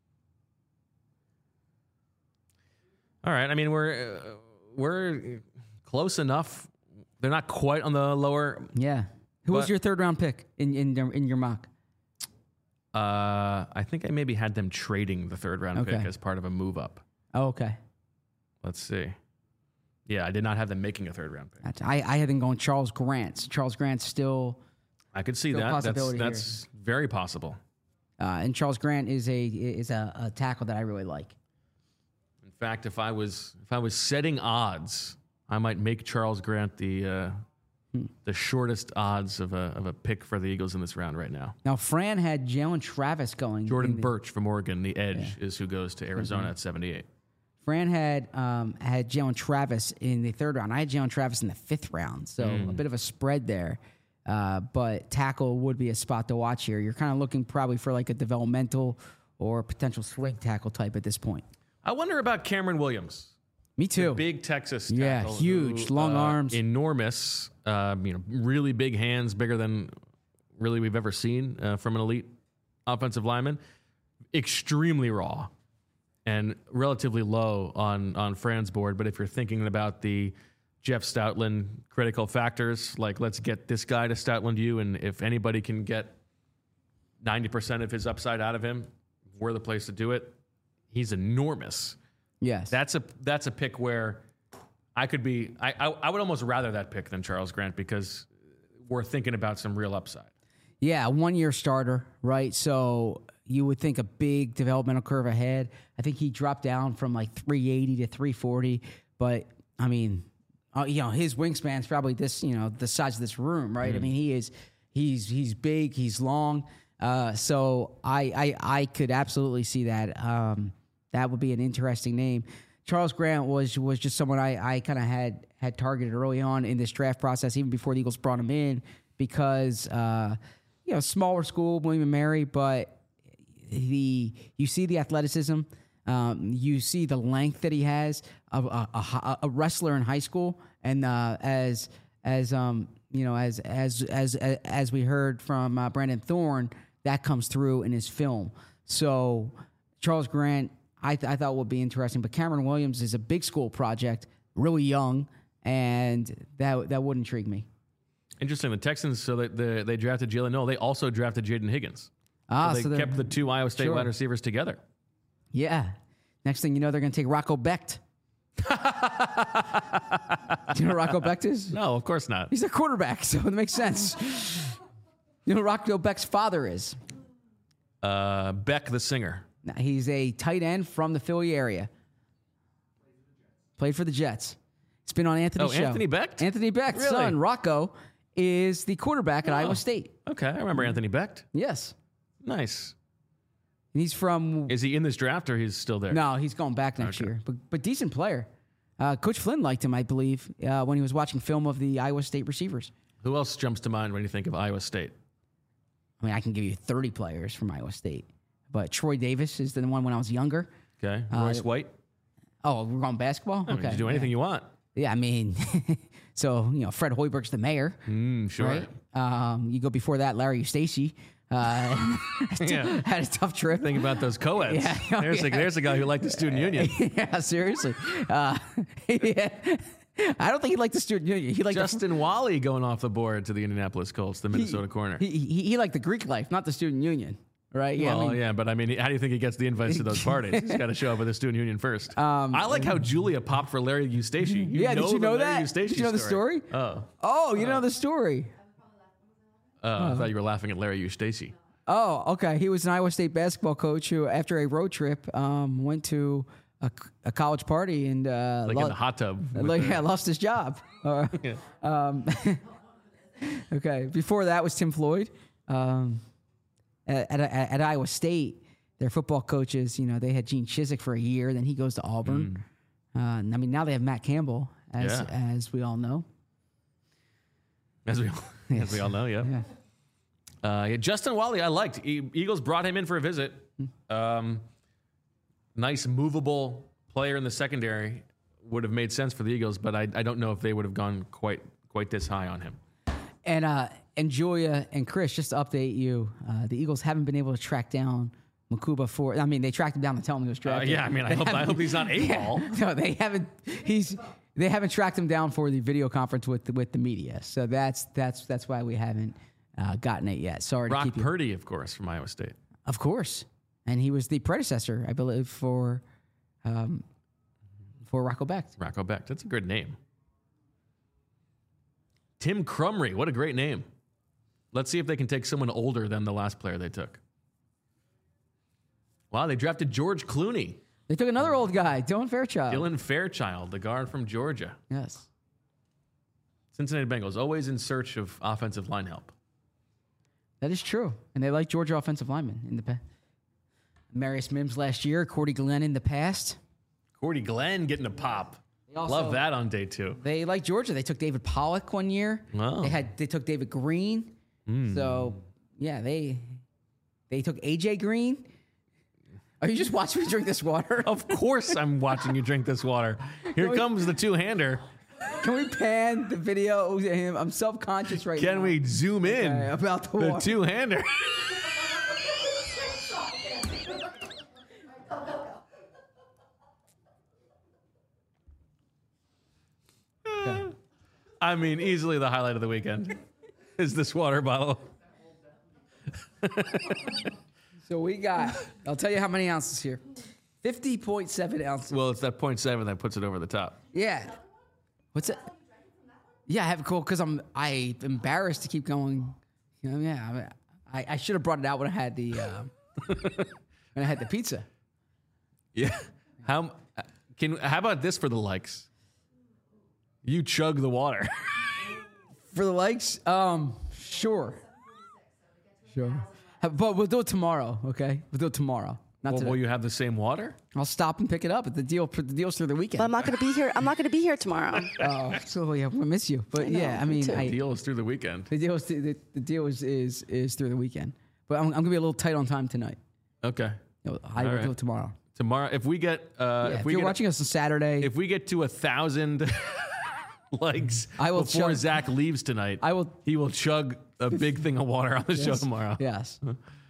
All right. I mean, we're uh, we're close enough. They're not quite on the lower. Yeah. Who was But- your third round pick in in your- in your mock? Uh, I think I maybe had them trading the third round Okay. pick as part of a move up. Oh, okay. Let's see. Yeah, I did not have them making a third round pick. That's, I I had them going Charles Grant. Charles Grant's still, I could see Still a that. That's possibility that's very possible. uh, and Charles Grant is a is a, a tackle that I really like. In fact, if I was if I was setting odds, I might make Charles Grant the uh, Hmm. the shortest odds of a of a pick for the Eagles in this round right now. Now Fran had Jalen Travis going. Jordan in the- Birch from Oregon, the edge, is who goes to Arizona Mm-hmm. at seventy-eight. Fran had um, had Jalen Travis in the third round. I had Jalen Travis in the fifth round, so Hmm. a bit of a spread there. Uh, but tackle would be a spot to watch here. You're kind of looking probably for like a developmental or potential swing tackle type at this point. I wonder about Cameron Williams. Me too. Big Texas Yeah, tackle. huge, who, long uh, arms. Enormous, uh, you know, really big hands, bigger than really we've ever seen uh, from an elite offensive lineman. Extremely raw and relatively low on, on Fran's board. But if you're thinking about the Jeff Stoutland critical factors, like let's get this guy to Stoutland you, and if anybody can get ninety percent of his upside out of him, we're the place to do it. He's enormous. Yes. That's a that's a pick where I could be. I, I I would almost rather that pick than Charles Grant because we're thinking about some real upside. Yeah, one year starter, right? So you would think a big developmental curve ahead. I think he dropped down from like three eighty to three forty, but I mean, uh, you know, his wingspan's probably this, you know, the size of this room, right? I mean, he is, he's he's big, he's long. Uh, so I, I I could absolutely see that. Um, that would be an interesting name. Charles Grant was was just someone I, I kind of had had targeted early on in this draft process, even before the Eagles brought him in, because uh, you know, smaller school, William and Mary, but the you see the athleticism, um, you see the length that he has, a, a, a, a wrestler in high school, and uh, as as um you know as as as as we heard from uh, Brandon Thorne, that comes through in his film. So Charles Grant, I, th- I thought would be interesting, but Cameron Williams is a big school project, really young, and that that would intrigue me. Interesting. The Texans, so they they, they drafted Jalen Knoll. They also drafted Jaden Higgins. Ah, so they so they're- kept the two Iowa State Sure. wide receivers together. Yeah. Next thing you know, they're going to take Rocco Becht. Do you know who Rocco Becht is? No, of course not. He's a quarterback, so it makes sense. You know who Rocco Becht's father is? Uh, Beck, the singer. Now, he's a tight end from the Philly area. Played for the Jets. It's been on Anthony's Oh, show. Anthony Becht? Anthony Becht's Really? son, Rocco, is the quarterback at Oh. Iowa State. Okay, I remember Anthony Becht. Yes. Nice. And he's from... Is he in this draft or he's still there? No, he's going back next Okay. year. But but decent player. Uh, Coach Flynn liked him, I believe, uh, when he was watching film of the Iowa State receivers. Who else jumps to mind when you think of Iowa State? I mean, I can give you thirty players from Iowa State. But Troy Davis is the one when I was younger. Okay, Uh, Royce White. Oh, we're on basketball? I mean, Okay. you do anything yeah. you want. Yeah, I mean, so, you know, Fred Hoiberg's the mayor. Mm, sure. Right? Um, you go before that, Larry Eustace. Uh, Yeah. had a tough trip. Think about those co-eds. Yeah, oh, there's, A, yeah. there's a guy who liked the student union. Yeah, seriously. Uh, yeah. I don't think he liked the student union. He liked the Justin Wally going off the board to the Indianapolis Colts, the Minnesota corner. He, he, he liked the Greek life, not the student union, right? Yeah, well, I mean, yeah, but I mean, how do you think he gets the invites to those parties? He's got to show up with the student union first. Um, I like how Julia popped for Larry Eustace. You yeah, know did you the know Larry that? Eustace Did you know the story? Oh, Oh, you know the story. Uh, I thought you were laughing at Larry Eustace. Oh, okay. He was an Iowa State basketball coach who, after a road trip, um, went to a, a college party and uh, Like lo- in the hot tub. with like, the- yeah, lost his job. Uh, Yeah. um, okay. Before that was Tim Floyd. Um, at, at, at Iowa State, their football coaches, you know, they had Gene Chizik for a year. Then he goes to Auburn. Uh, I mean, now they have Matt Campbell, as Yeah. as we all know. As we, as Yes. we all know, yeah. Yeah. Uh, yeah, Justin Wally, I liked. E- Eagles brought him in for a visit. Um, nice, movable player in the secondary. Would have made sense for the Eagles, but I, I don't know if they would have gone quite quite this high on him. And uh, and Julia and Chris, just to update you, uh, the Eagles haven't been able to track down Makuba for. I mean, they tracked him down to tell him he was Uh, drafted. yeah, I mean, I hope, I hope he's not a ball. No, they haven't. He's they haven't tracked him down for the video conference with the, with the media. So that's that's that's why we haven't uh, gotten it yet. Sorry to Brock keep you. Purdy, of course, from Iowa State. Of course, and he was the predecessor, I believe, for um, for Rocco Becht. Rocco Becht. That's a good name. Tim Crumry. What a great name. Let's see if they can take someone older than the last player they took. Wow, they drafted George Clooney. They took another old guy, Dylan Fairchild. Dylan Fairchild, the guard from Georgia. Yes. Cincinnati Bengals, always in search of offensive line help. That is true. And they like Georgia offensive linemen in the past. Marius Mims last year, Cordy Glenn in the past. Cordy Glenn getting a pop. also- Love that on day two. They like Georgia. They took David Pollock one year. Wow. They had they took David Green. So yeah, they they took A J Green. Are you just watching me drink this water? Of course I'm watching you drink this water. Here comes the two-hander. Can we pan the video of him? I'm self-conscious right now. Can we zoom in? Okay, about the the water. two-hander. I mean, easily the highlight of the weekend is this water bottle. So we got, I'll tell you how many ounces here. fifty point seven ounces. Well, it's that point seven that puts it over the top. Yeah. What's it? Yeah, I have it cool because I'm I embarrassed to keep going. You know, yeah, I, mean, I, I should have brought it out when I had the uh, when I had the pizza. Yeah. How can? How about this for the likes? You chug the water. For the likes, um, sure, sure. But we'll do it tomorrow, okay? We'll do it tomorrow. Not Well, today. will you have the same water? I'll stop and pick it up. But the deal, the deal's through the But weekend. I'm not going to be here. I'm not going to be here tomorrow. Oh, so yeah, we miss you. But know, yeah, I me mean, too. I, Deal is through the weekend. the deal is the, the deal is, is is through the weekend. But I'm, I'm gonna be a little tight on time tonight. Okay. No, I will right. do it tomorrow. Tomorrow, if we get, uh, Yeah, if if we you're get, watching us on Saturday, if we get to a thousand likes I will before chug- Zach leaves tonight, I will- He will chug a big thing of water on the show yes, tomorrow. Yes.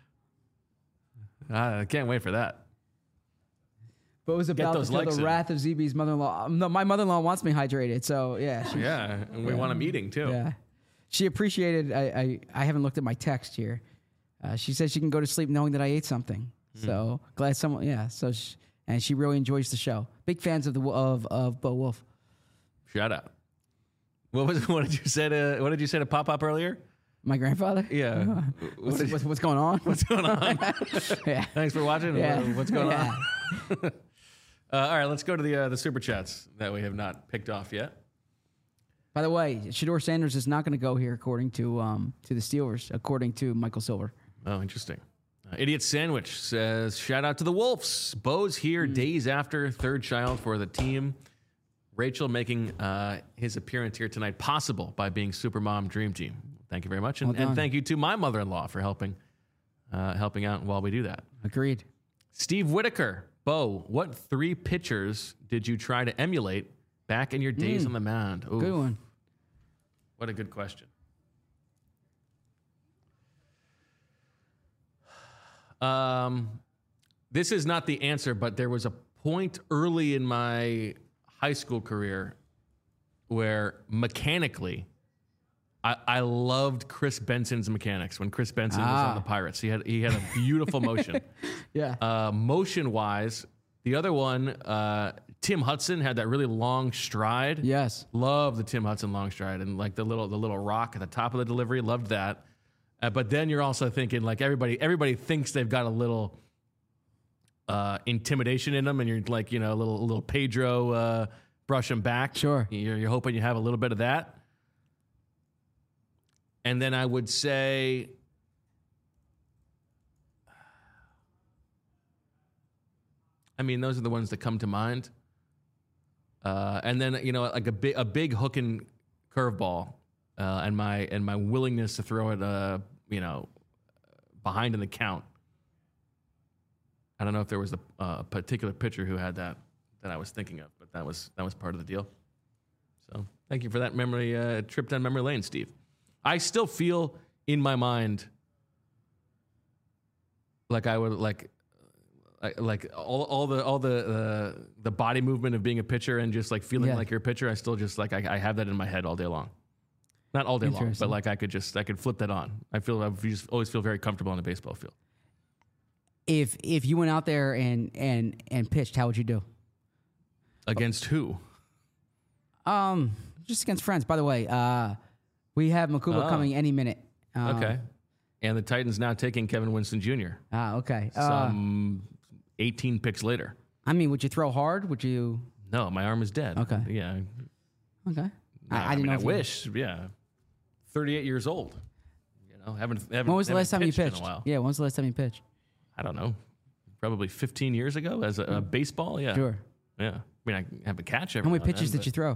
I can't wait for that. But it was about those to feel likes the in. wrath of Z B's mother-in-law. Um, No, my mother-in-law wants me hydrated, so yeah, she, Yeah, and we want him eating too. yeah. She appreciated. I, I I haven't looked at my text here. Uh, she says she can go to sleep knowing that I ate something. Hmm. So glad someone. Yeah. So she, and she really enjoys the show. Big fans of the of of Bo Wolf. Shout out. What was? What did you say to? What did you say to Pop Pop earlier? My grandfather. Yeah. What What's, did- what's, what's going on? what's going on? yeah. Thanks for watching. Yeah. What- What's going Yeah. on? Uh, all right, let's go to the uh, the super chats that we have not picked off yet. By the way, Shador Sanders is not going to go here, according to um to the Steelers, according to Michael Silver. Oh, interesting. Uh, Idiot Sandwich says, shout out to the Wolves. Bo's here days after third child for the team. Rachel making uh, his appearance here tonight possible by being Supermom Dream Team. Thank you very much. And, Well and done. thank you to my mother-in-law for helping uh, helping out while we do that. Agreed. Steve Whitaker. Bo, what three pitchers did you try to emulate back in your days on the mound? Oof. Good one. What a good question. Um, this is not the answer, but there was a point early in my high school career where mechanically, I, I loved Chris Benson's mechanics when Chris Benson was Ah. on the Pirates. He had he had a beautiful motion. Yeah. Uh, motion wise, the other one, uh, Tim Hudson had that really long stride. Yes. Love the Tim Hudson long stride and like the little the little rock at the top of the delivery. Loved that. Uh, but then you're also thinking like everybody everybody thinks they've got a little uh, intimidation in them, and you're like, you know, a little a little Pedro uh, brush them back. Sure. You're, you're hoping you have a little bit of that. And then I would say, I mean, those are the ones that come to mind. Uh, and then, you know, like a big a big hook and curveball. Uh, and my and my willingness to throw it, uh, you know, behind in the count. I don't know if there was a uh, particular pitcher who had that that I was thinking of, but that was that was part of the deal. So thank you for that memory uh, trip down memory lane, Steve. I still feel in my mind like I would like like all all the all the uh, the body movement of being a pitcher and just like feeling Yeah. like you're a pitcher. I still just like I, I have that in my head all day long. Not all day long, but like I could just I could flip that on. I feel I just always feel very comfortable on a baseball field. If if you went out there and and and pitched, how would you do? Against who? Um, just against friends. By the way, uh, we have Makuba Oh. coming any minute. Um, Okay. And the Titans now taking Kevin Winston Junior Ah, okay. Uh, Some eighteen picks later. I mean, would you throw hard? Would you? No, my arm is dead. Okay. Yeah. Okay. I, I, I didn't mean, know. I if you- wish. Yeah. thirty-eight years old. You know, haven't haven't. When was the haven't last time you pitched in pitched? a while. Yeah, when was the last time you pitched? I don't know. Probably fifteen years ago as a, a baseball. Yeah. Sure. Yeah. I mean, I have a catch every How many now and pitches then, did you throw?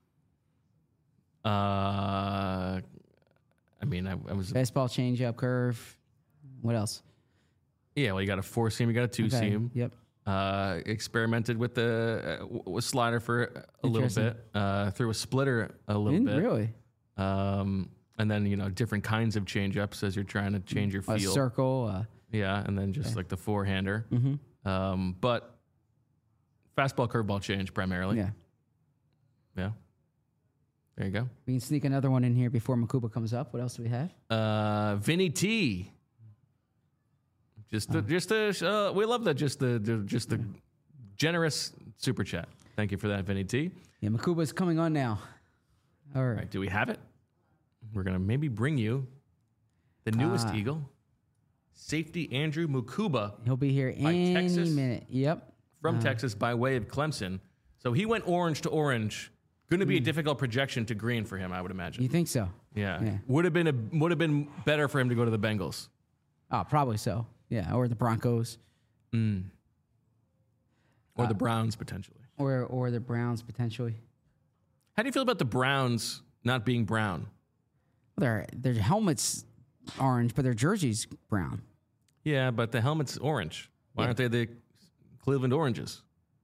but, Uh, I mean, I, I was. Fastball, changeup, curve. What else? Yeah. Well, you got a four seam. You got a two Okay, seam. Yep. Uh, experimented with the uh, w- with slider for a little Interesting. bit. Uh, threw a splitter a little Didn't bit. really. Um, and then you know different kinds of change ups as you're trying to change your A feel. circle. Uh, Yeah, and then just like the four hander. mm-hmm. Um, but fastball, curveball change primarily. Yeah. Yeah. There you go. We can sneak another one in here before Makuba comes up. What else do we have? Uh, Vinny T. Just the, just the, uh, we love that. Just the, the just the generous super chat. Thank you for that, Vinny T. Yeah, Makuba's coming on now. All right. All right, do we have it? We're gonna maybe bring you the newest Ah. Eagle, safety Andrew Mukuba He'll be here By any Texas? minute. Yep. from Texas by way of Clemson. So he went orange to orange. Going to be a difficult projection to green for him, I would imagine. You think so? Yeah, Yeah. would have been a would have been better for him to go to the Bengals. Oh, probably so. Yeah, or the Broncos, Mm. Or Uh, the Browns potentially. or or the Browns potentially. How do you feel about the Browns not being brown? Their their helmets orange, but their jerseys brown. Yeah, but the helmet's orange. Why Yeah. aren't they the Cleveland Oranges?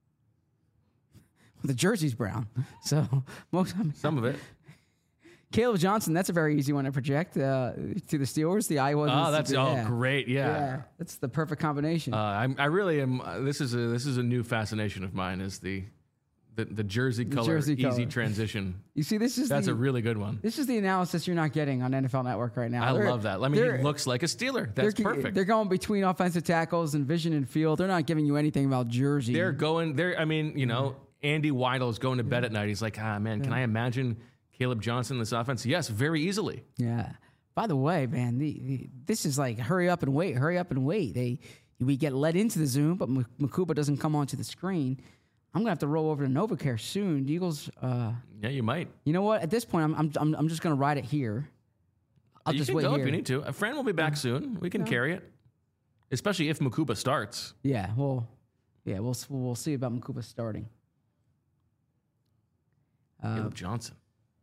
The jersey's brown. So most Some of it. Caleb Johnson, that's a very easy one to project uh, to the Steelers. The Iowa. Oh, that's oh yeah. great. Yeah. Yeah, that's the perfect combination. Uh, I'm, I really am. Uh, this is a this is a new fascination of mine. Is the the, the jersey color jersey easy color. transition. you see, this is That's the, a really good one. this is the analysis you're not getting on N F L Network right now. I They're- love that. I mean, they're- he looks like a Steeler. That's they're, perfect. They're going between offensive tackles and vision and field. They're not giving you anything about jersey. They're going. They're. I mean, you know, Andy Weidel is going to bed at night. He's like, ah, man, can I imagine Caleb Johnson in this offense? Yes, very easily. Yeah. By the way, man, the, the, this is like hurry up and wait, hurry up and wait. They we get let into the Zoom, but M- Makuba doesn't come onto the screen. I'm gonna have to roll over to NovaCare soon. The Eagles. Uh, Yeah, you might. you know what? At this point, I'm I'm I'm, I'm just gonna ride it here. I'll you just can wait go here. if you need to. A friend will be back soon. We can carry it, especially if Makuba starts. Yeah. Well. Yeah. We'll we'll see about Makuba starting. Uh, Caleb Johnson.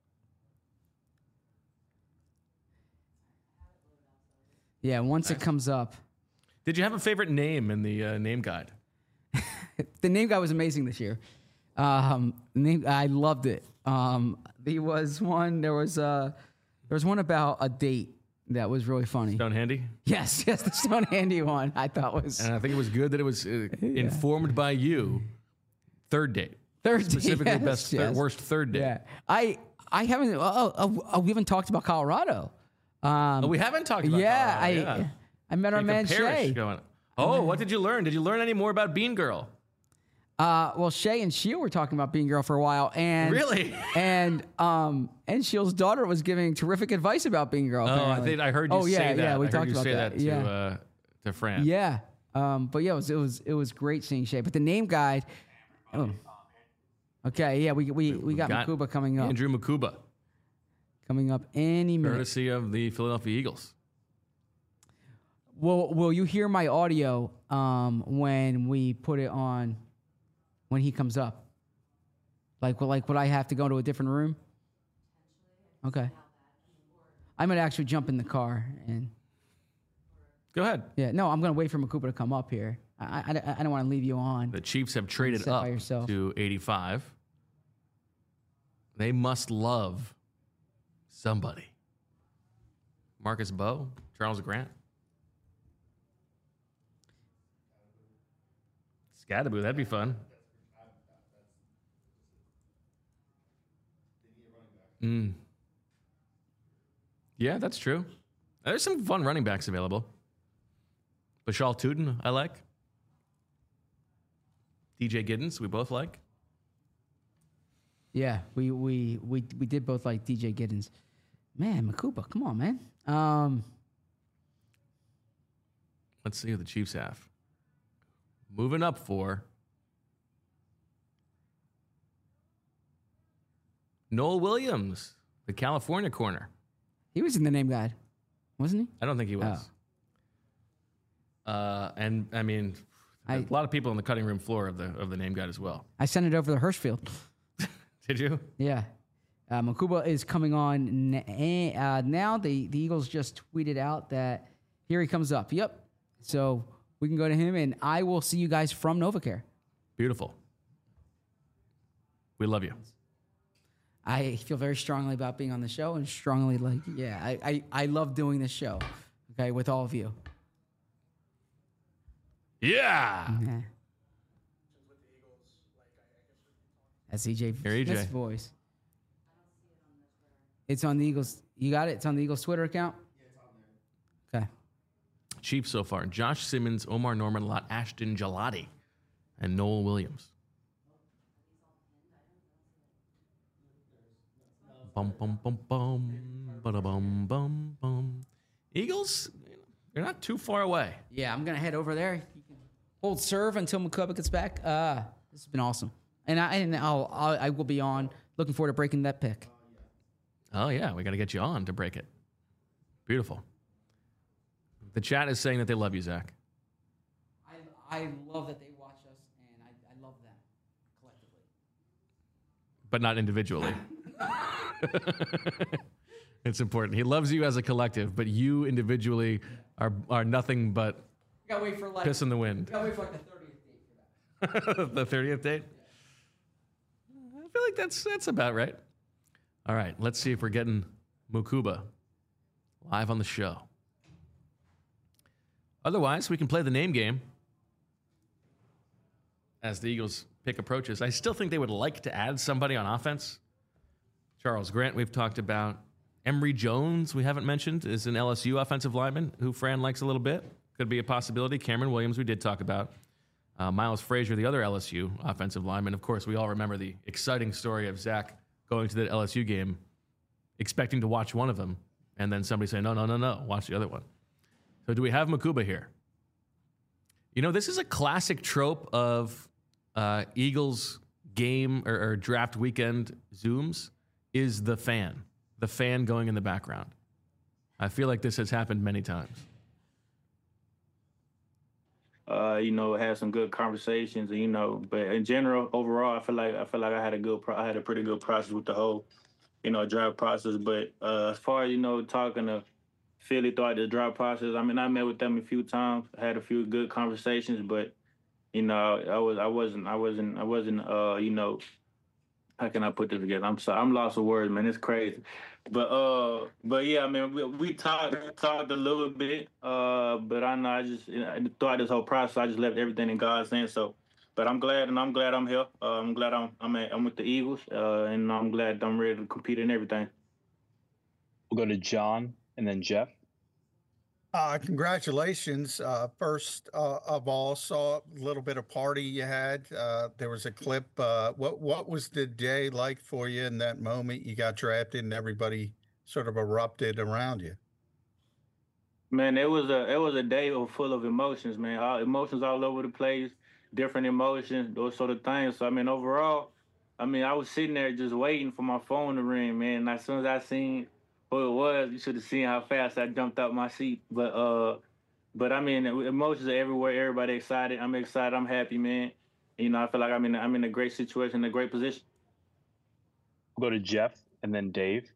yeah. Once it comes up, Did you have a favorite name in the uh, name guide? the name guy was amazing this year. Um, name, I loved it. Um, there was one. There was uh, there was one about a date that was really funny. Stone Handy. Yes, yes, the Stone Handy one. I thought was And I think it was good that it was uh, informed by you. Third date. third date. Specifically, yes, best thir- yes. worst third date. Yeah, I I haven't. Oh, oh, oh, we haven't talked about Colorado. Um, Oh, we haven't talked about yeah, that. I yeah. I met our Jacob man Parrish Shay. going. Oh, what did you learn? Did you learn any more about Bean Girl? Uh, well, Shay and Sheil were talking about being girl for a while, and really, and um, and Sheil's daughter was giving terrific advice about being girl. Oh, apparently. I think I heard you oh, say yeah, that. Yeah, we I talked heard you about say that. that to yeah, uh, to Fran. yeah. Um, but yeah, it was it was it was great seeing Shay. But the name guide. Oh. Okay, yeah, we we we got, got Mukuba coming up. Andrew Mukuba coming up any minute. Courtesy of the Philadelphia Eagles. Will Will you hear my audio um, when we put it on? When he comes up, like, well, like, would I have to go to a different room? Okay, I'm gonna actually jump in the car and go ahead. Yeah, no, I'm gonna wait for Mukuba to come up here. I I, I don't want to leave you on. The Chiefs have traded up to eighty-five. They must love somebody. Marcus Bowe, Charles Grant. Scadaboo, that'd be fun. Mm. Yeah, that's true. There's some fun running backs available. Bashal Tootin, I like. D J Giddens, we both like. Yeah, we we we we did both like D J Giddens. Man, Mukuba, come on, man. Um, Let's see who the Chiefs have. Moving up for Noel Williams, the California corner. He was in the name guide, wasn't he? I don't think he was. Oh. Uh, and I mean, I, a lot of people on the cutting room floor of the of the name guide as well. I sent it over to Hirschfield. Did you? Yeah. Uh, Mukuba is coming on n- uh, now. The, the Eagles just tweeted out that here he comes up. Yep. So we can go to him, and I will see you guys from NovaCare. Beautiful. We love you. I feel very strongly about being on the show, and strongly like, yeah, I, I, I love doing this show, okay, with all of you. Yeah. yeah. That's E J Smith's voice. It's on the Eagles. You got it? It's on the Eagles Twitter account? Yeah, it's on there. Okay. Chiefs so far. Josh Simmons, Omar Norman, Lot Ashton Gelati, and Noel Williams. Bum, bum, bum, bum, bada, bum, bum, bum. Eagles, they're not too far away. Yeah, I'm going to head over there. You can hold serve until Mukuba gets back. Uh, this has been awesome. And, I, and I'll, I'll, I will be on. Looking forward to breaking that pick. Oh, yeah. We got to get you on to break it. Beautiful. The chat is saying that they love you, Zach. I, I love that they watch us, and I, I love them collectively. But not individually. It's important. He loves you as a collective, but you individually are are nothing but we gotta wait for like, piss in the wind. We gotta wait for like the thirtieth date for that. The thirtieth date? Yeah. I feel like that's that's about right. All right, let's see if we're getting Mukuba live on the show. Otherwise, we can play the name game as the Eagles pick approaches. I still think they would like to add somebody on offense. Charles Grant, we've talked about. Emory Jones, we haven't mentioned, is an L S U offensive lineman who Fran likes a little bit. Could be a possibility. Cameron Williams, we did talk about. Uh, Miles Frazier, the other L S U offensive lineman. Of course, we all remember the exciting story of Zach going to the L S U game, expecting to watch one of them, and then somebody saying, no, no, no, no, watch the other one. So do we have Mukuba here? You know, this is a classic trope of uh, Eagles game or, or draft weekend Zooms is the fan. The fan going in the background. I feel like this has happened many times. Uh, you know, had some good conversations, you know, but in general, overall, I feel like I feel like I had a good, pro- I had a pretty good process with the whole, you know, draft process. But uh, as far as you know, talking to Philly throughout the draft process, I mean, I met with them a few times, had a few good conversations, but you know, I was, I wasn't, I wasn't, I wasn't, uh, you know. How can I put this together? I'm sorry, I'm lost for words, man. It's crazy, but uh, but yeah, I mean, we, we talked talked a little bit, uh, but I know I just you know, throughout this whole process, I just left everything in God's hands. So, but I'm glad, and I'm glad I'm here. Uh, I'm glad I'm I'm, at, I'm with the Eagles, uh, and I'm glad I'm ready to compete in everything. We'll go to John and then Jeff. Uh, congratulations. Uh, first uh, of all, saw a little bit of party you had. Uh, there was a clip. Uh, what what was the day like for you in that moment you got drafted and everybody sort of erupted around you? Man, it was a it was a day of- full of emotions, man. All, emotions all over the place, different emotions, those sort of things. So I mean, overall, I mean, I was sitting there just waiting for my phone to ring, man. And as soon as I seen who it was, you should have seen how fast I jumped out my seat. But uh, but I mean, emotions are everywhere. Everybody excited. I'm excited. I'm happy, man. You know, I feel like I'm in I'm in a great situation, a great position. We'll go to Jeff and then Dave.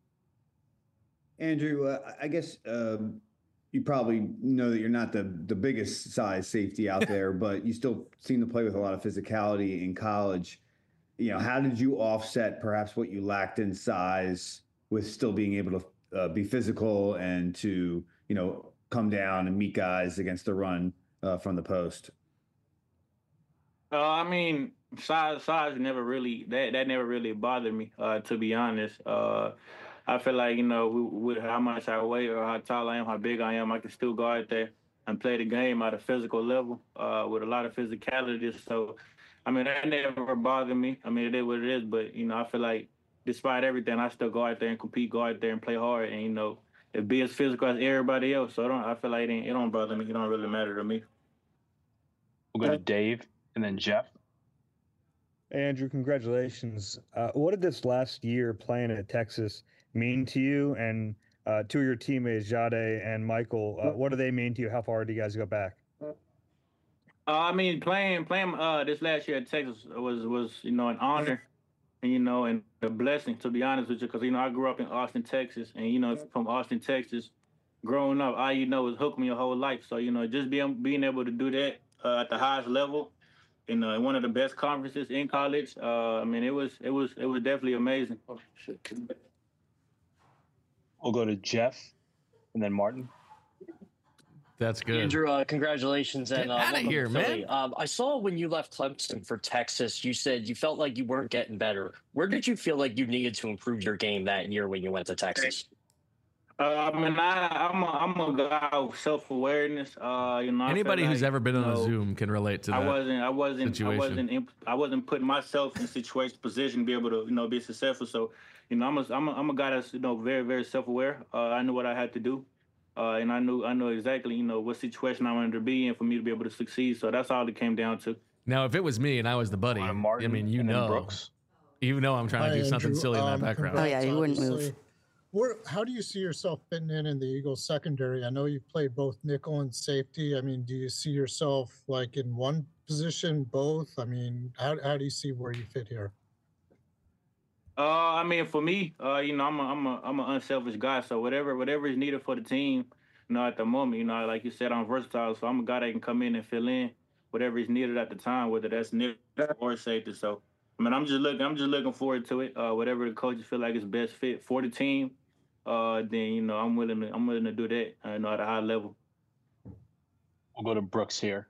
Andrew, uh, I guess um, you probably know that you're not the the biggest size safety out there, but you still seem to play with a lot of physicality in college. You know, how did you offset perhaps what you lacked in size with still being able to uh, be physical and to, you know, come down and meet guys against the run uh, from the post? Uh, I mean, size size never really that that never really bothered me. Uh, to be honest, uh, I feel like you know with, with how much I weigh or how tall I am, how big I am, I can still go out there and play the game at a physical level uh, with a lot of physicality. So, I mean, that never bothered me. I mean, it is what it is. But you know, I feel like despite everything, I still go out there and compete, go out there and play hard, and you know, and be as physical as everybody else. So I don't. I feel like it, ain't, it don't bother me. It don't really matter to me. We'll go to Dave and then Jeff. Andrew, congratulations. Uh, what did this last year playing at Texas mean to you and uh, to your teammates, Jade and Michael? Uh, what do they mean to you? How far do you guys go back? Uh, I mean, playing playing uh, this last year at Texas was was you know an honor and you know and a blessing to be honest with you because you know I grew up in Austin, Texas, and you know from Austin, Texas, growing up, all you know is hook me your whole life. So you know just being being able to do that uh, at the highest level in uh, one of the best conferences in college. Uh, I mean, it was it was it was definitely amazing. Oh, shit. We'll go to Jeff and then Martin. That's good. Andrew, uh, congratulations and Get uh, out of welcome here, to Philly. man. Um, I saw when you left Clemson for Texas, you said you felt like you weren't getting better. Where did you feel like you needed to improve your game that year when you went to Texas? Uh, I mean, I, I'm a, I'm a guy of self awareness. Uh, you know, I Anybody feel who's like, ever been you on a know, Zoom can relate to that. I wasn't, I wasn't, situation. I wasn't, in, I wasn't putting myself in situation, position to be able to, you know, be successful. So, you know, I'm a, I'm a, I'm a guy that's, you know, very, very self aware. Uh, I knew what I had to do, uh, and I knew, I knew exactly, you know, what situation I wanted to be in for me to be able to succeed. So that's all it came down to. Now, if it was me and I was the buddy, I Martin mean, you and then know, Brooks. you know, I'm trying to Hi, do something Andrew. silly in that Um, background. Oh, yeah, congrats, you wouldn't move. obviously. Where, how do you see yourself fitting in in the Eagles secondary? I know you played both nickel and safety. I mean, do you see yourself like in one position, both? I mean, how how do you see where you fit here? Uh, I mean, for me, uh, you know, I'm a, I'm a, I'm an unselfish guy. So whatever, whatever is needed for the team, you know, at the moment, you know, like you said, I'm versatile. So I'm a guy that can come in and fill in whatever is needed at the time, whether that's nickel or safety. So, I mean, I'm just looking, I'm just looking forward to it. Uh, whatever the coaches feel like is best fit for the team, uh, then you know, I'm willing to, I'm willing to do that. Uh, you know, at a high level. We'll go to Brooks here.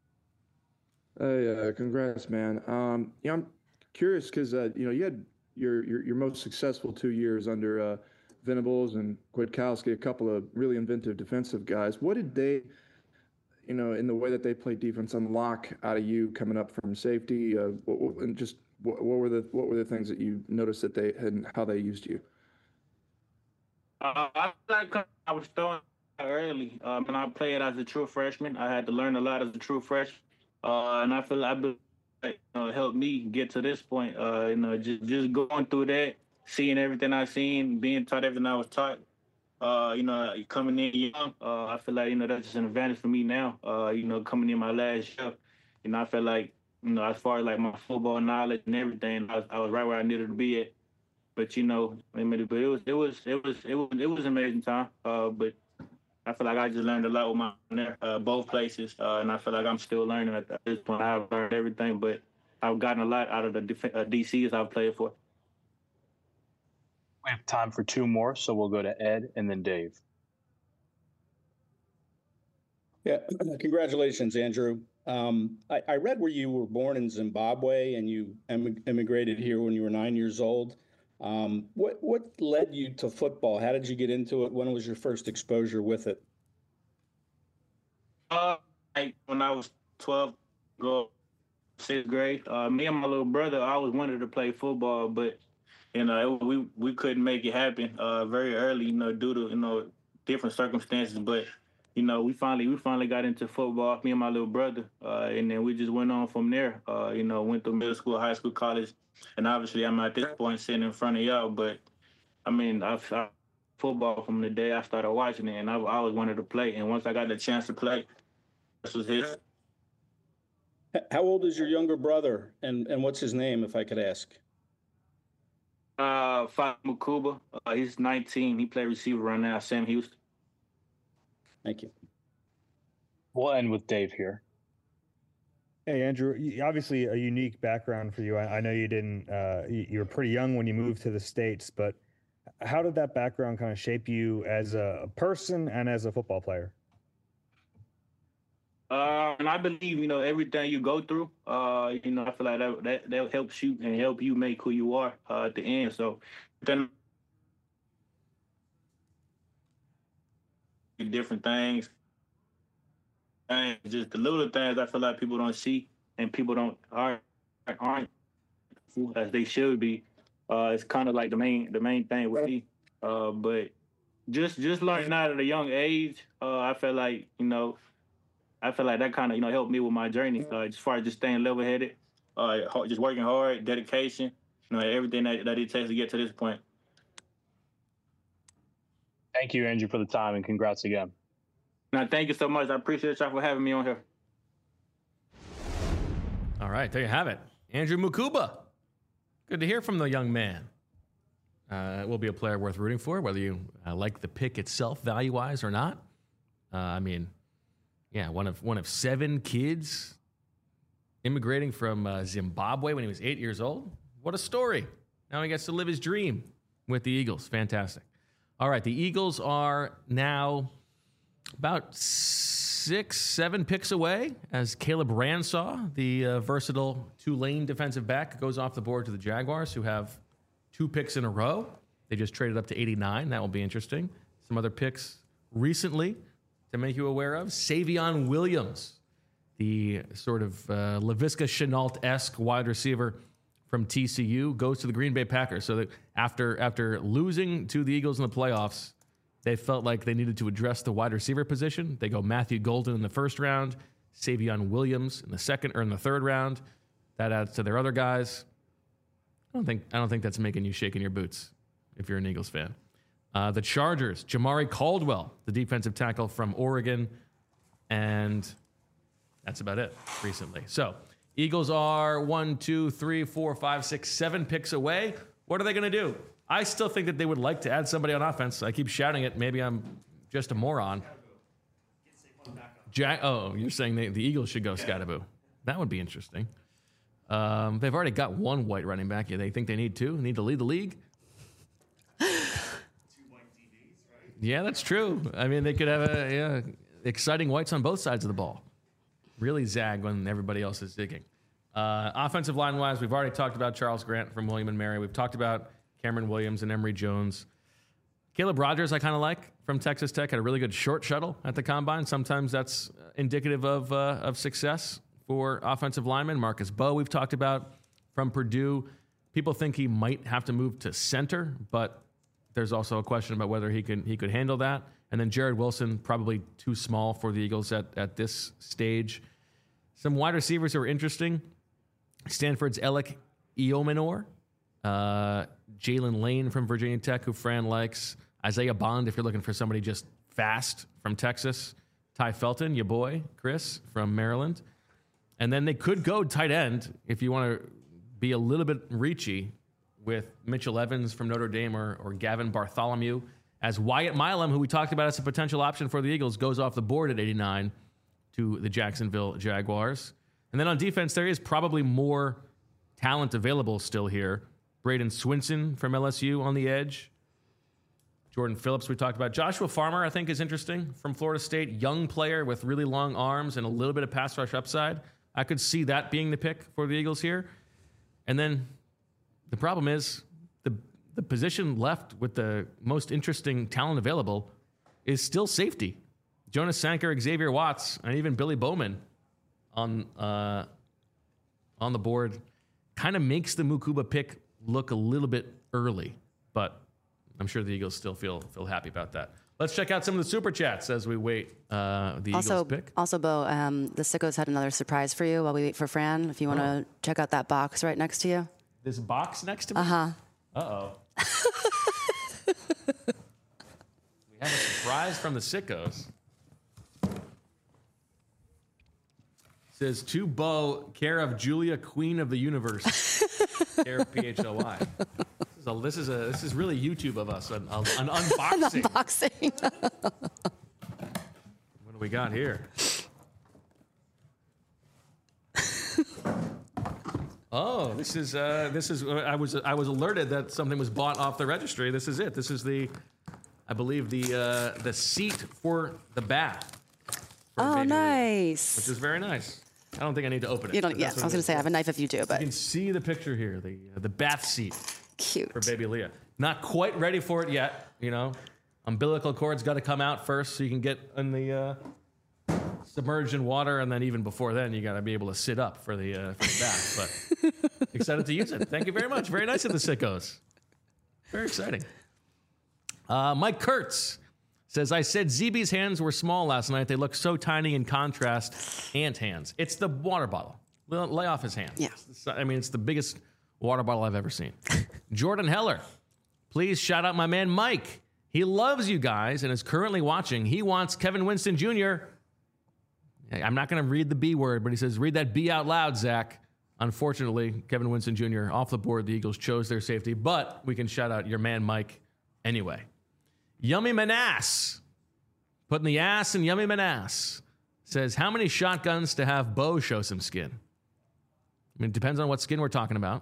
Hey, uh, congrats, man. Um, yeah, I'm curious because uh, you know you had your, your your most successful two years under uh, Venables and Kwiatkowski, a couple of really inventive defensive guys. What did they, you know, in the way that they played defense, unlock out of you coming up from safety? Uh, what, what- and just what, what were the what were the things that you noticed that they had and how they used you? Uh, I feel like I was throwing early. Um, and I played as a true freshman. I had to learn a lot as a true freshman. Uh, and I feel like I been, like, you know, helped me get to this point. Uh, you know, just just going through that, seeing everything I seen, being taught everything I was taught. Uh, you know, coming in young, uh, I feel like you know that's just an advantage for me now. Uh, you know, coming in my last year, you know, I feel like you know as far as like my football knowledge and everything, I was, I was right where I needed to be at. But you know, I mean, but it was it was it was it was it was an amazing time. Uh, but I feel like I just learned a lot with my uh, both places, uh, and I feel like I'm still learning at this point. I've learned everything, but I've gotten a lot out of the def- uh, D Cs I've played for. We have time for two more, so we'll go to Ed and then Dave. Yeah, congratulations, Andrew. Um, I, I read where you were born in Zimbabwe and you em- immigrated here when you were nine years old. Um, what what led you to football? How did you get into it? When was your first exposure with it? Uh, like when I was twelve, go sixth grade. Uh, me and my little brother I always wanted to play football, but you know it, we we couldn't make it happen uh, very early. You know, due to you know different circumstances. But you know, we finally we finally got into football. Me and my little brother, uh, and then we just went on from there. Uh, you know, went through middle school, high school, college, and obviously I'm at this point sitting in front of y'all. But I mean, I've I, football from the day I started watching it, and I, I always wanted to play. And once I got the chance to play, this was his. How old is your younger brother, and, and what's his name, if I could ask? Uh, Fat Makuba. Uh, he's nineteen. He plays receiver right now. Sam Houston. Thank you. We'll end with Dave here. Hey, Andrew, obviously a unique background for you. I, I know you didn't, uh, you, you were pretty young when you moved to the States, but how did that background kind of shape you as a person and as a football player? Uh, and I believe, you know, everything you go through, uh, you know, I feel like that that, that helps you and help you make who you are uh, at the end. So then different things, and just the little things I feel like people don't see and people don't aren't, aren't as they should be. Uh, it's kind of like the main the main thing with me. Uh, but just just learning out at a young age, uh, I feel like you know I feel like that kind of you know helped me with my journey uh, as far as just staying level headed, uh, just working hard, dedication, you know, everything that, that it takes to get to this point. Thank you, Andrew, for the time, and congrats again. Now, thank you so much. I appreciate y'all for having me on here. All right, there you have it. Andrew Mukuba. Good to hear from the young man. Uh, will be a player worth rooting for, whether you uh, like the pick itself value-wise or not. Uh, I mean, yeah, one of one of seven kids immigrating from uh, Zimbabwe when he was eight years old. What a story. Now he gets to live his dream with the Eagles. Fantastic. All right, the Eagles are now about six, seven picks away as Caleb Ransaw, the uh, versatile Tulane defensive back, goes off the board to the Jaguars, who have two picks in a row. They just traded up to eighty-nine. That will be interesting. Some other picks recently to make you aware of. Savion Williams, the sort of uh, Laviska Shenault-esque wide receiver from T C U, goes to the Green Bay Packers. So that after after losing to the Eagles in the playoffs, they felt like they needed to address the wide receiver position. They go Matthew Golden in the first round, Savion Williams in the second or in the third round. That adds to their other guys. I don't think I don't think that's making you shake in your boots if you're an Eagles fan. Uh, the Chargers, Jamari Caldwell, the defensive tackle from Oregon, and that's about it recently. So Eagles are one, two, three, four, five, six, seven picks away. What are they going to do? I still think that they would like to add somebody on offense. I keep shouting it. Maybe I'm just a moron. Jack, oh, you're saying they, the Eagles should go Scattaboo. That would be interesting. Um, they've already got one white running back. Yeah, they think they need two. Need to lead the league. Yeah, that's true. I mean, they could have a, yeah, exciting whites on both sides of the ball. Really zag when everybody else is zigging. Uh, offensive line-wise, we've already talked about Charles Grant from William and Mary. We've talked about Cameron Williams and Emory Jones. Caleb Rogers, I kind of like, from Texas Tech, had a really good short shuttle at the Combine. Sometimes that's indicative of uh, of success for offensive linemen. Marcus Bowe, we've talked about, from Purdue. People think he might have to move to center, but there's also a question about whether he can he could handle that. And then Jared Wilson, probably too small for the Eagles at, at this stage. Some wide receivers who are interesting. Stanford's Alec Eomenor. Uh, Jalen Lane from Virginia Tech, who Fran likes. Isaiah Bond, if you're looking for somebody just fast from Texas. Ty Felton, your boy, Chris, from Maryland. And then they could go tight end if you want to be a little bit reachy with Mitchell Evans from Notre Dame or, or Gavin Bartholomew, as Wyatt Milam, who we talked about as a potential option for the Eagles, goes off the board at eighty-nine to the Jacksonville Jaguars. And then on defense, there is probably more talent available still here. Braden Swinson from L S U on the edge. Jordan Phillips, we talked about. Joshua Farmer, I think, is interesting from Florida State. Young player with really long arms and a little bit of pass rush upside. I could see that being the pick for the Eagles here. And then the problem is the the position left with the most interesting talent available is still safety. Jonas Sanker, Xavier Watts, and even Billy Bowman on uh, on the board kind of makes the Mukuba pick look a little bit early, but I'm sure the Eagles still feel feel happy about that. Let's check out some of the super chats as we wait uh, the also, Eagles pick. Also, Bo, um, the Sickos had another surprise for you while we wait for Fran. If you want to Oh. check out that box right next to you. This box next to me? Uh-huh. Uh-oh. We have a surprise from the Sickos. Says, to Bo, care of Julia, Queen of the Universe. Care of P H L Y. This is, a, this, is a, this is really YouTube of us, an, an unboxing. Unboxing. What do we got here? Oh, this is uh, this is. Uh, I was I was alerted that something was bought off the registry. This is it. This is the, I believe the uh, the seat for the bath. for Oh, Baby Leah, nice. which is very nice. I don't think I need to open it. You don't. but Yeah, I that's was what it going to is. say I have a knife if you do, You but can see the picture here. The uh, the bath seat cute. for Baby Leah. Not quite ready for it yet. You know, umbilical cord's got to come out first, so you can get in the. Uh, submerged in water, and then even before then, you got to be able to sit up for the, uh, for the bath. But excited to use it. Thank you very much. Very nice of the Sickos. Very exciting. Uh, Mike Kurtz says, I said Z B's hands were small last night. They look so tiny in contrast. Ant hands. It's the water bottle. Lay off his hands. Yeah. It's- I mean, it's the biggest water bottle I've ever seen. Jordan Heller, please shout out my man Mike. He loves you guys and is currently watching. He wants Kevin Winston Junior I'm not going to read the B word, but he says, read that B out loud, Zach. Unfortunately, Kevin Winston Junior off the board. The Eagles chose their safety, but we can shout out your man, Mike, anyway. Yummy Manass, putting the ass in Yummy Manass, says, how many shotguns to have Bo show some skin? I mean, it depends on what skin we're talking about,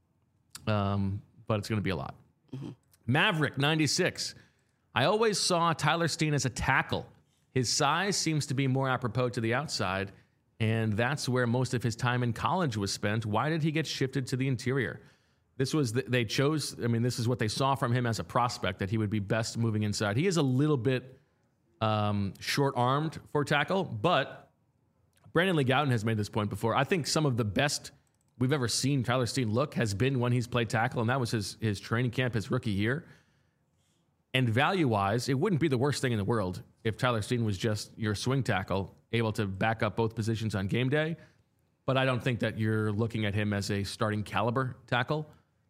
um, but it's going to be a lot. Mm-hmm. Maverick ninety-six, I always saw Tyler Steen as a tackle. His size seems to be more apropos to the outside, and that's where most of his time in college was spent. Why did he get shifted to the interior? This was, the, they chose, I mean, this is what they saw from him as a prospect, that he would be best moving inside. He is a little bit um, short-armed for tackle, but Brandon Lee Gowton has made this point before. I think some of the best we've ever seen Tyler Steen look has been when he's played tackle, and that was his, his training camp, his rookie year. And value-wise, it wouldn't be the worst thing in the world if Tyler Steen was just your swing tackle, able to back up both positions on game day. But I don't think that you're looking at him as a starting caliber tackle.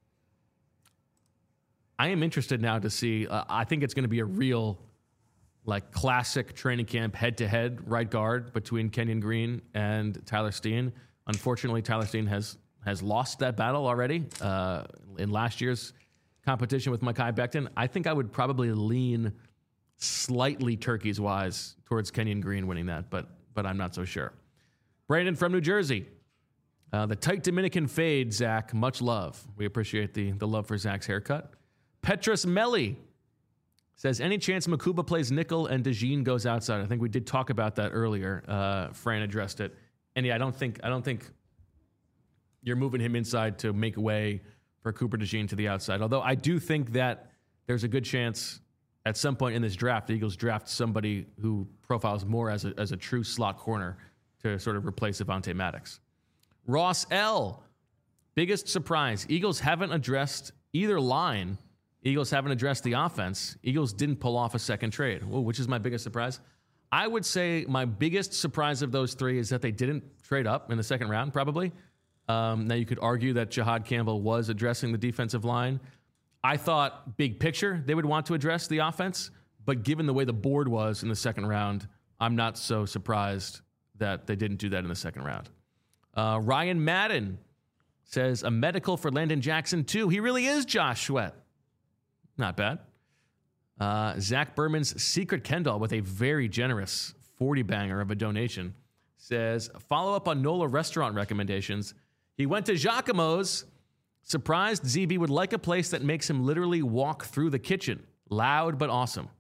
I am interested now to see, uh, I think it's going to be a real, like, classic training camp head-to-head right guard between Kenyon Green and Tyler Steen. Unfortunately, Tyler Steen has, has lost that battle already uh, in last year's competition with Mekhi Becton. I think I would probably lean slightly turkeys wise towards Kenyon Green winning that, but but I'm not so sure. Brandon from New Jersey, uh, the tight Dominican fade, Zach. Much love. We appreciate the the love for Zach's haircut. Petrus Melli says, any chance Mukuba plays nickel and DeJean goes outside? I think we did talk about that earlier. Uh, Fran addressed it, and yeah, I don't think I don't think you're moving him inside to make way for Cooper DeJean to the outside. Although I do think that there's a good chance at some point in this draft, the Eagles draft somebody who profiles more as a, as a true slot corner to sort of replace Avonte Maddox. Ross L., biggest surprise. Eagles haven't addressed either line. Eagles haven't addressed the offense. Eagles didn't pull off a second trade. Whoa, which is my biggest surprise? I would say my biggest surprise of those three is that they didn't trade up in the second round, probably. Um, now, you could argue that Jahad Campbell was addressing the defensive line. I thought, big picture, they would want to address the offense. But given the way the board was in the second round, I'm not so surprised that they didn't do that in the second round. Uh, Ryan Madden says, a medical for Landon Jackson, too. He really is Josh Sweat. Not bad. Uh, Zach Berman's Secret Kendall with a very generous forty-banger of a donation says, follow up on NOLA restaurant recommendations. He went to Giacomo's. Surprised Z B would like a place that makes him literally walk through the kitchen. Loud but awesome.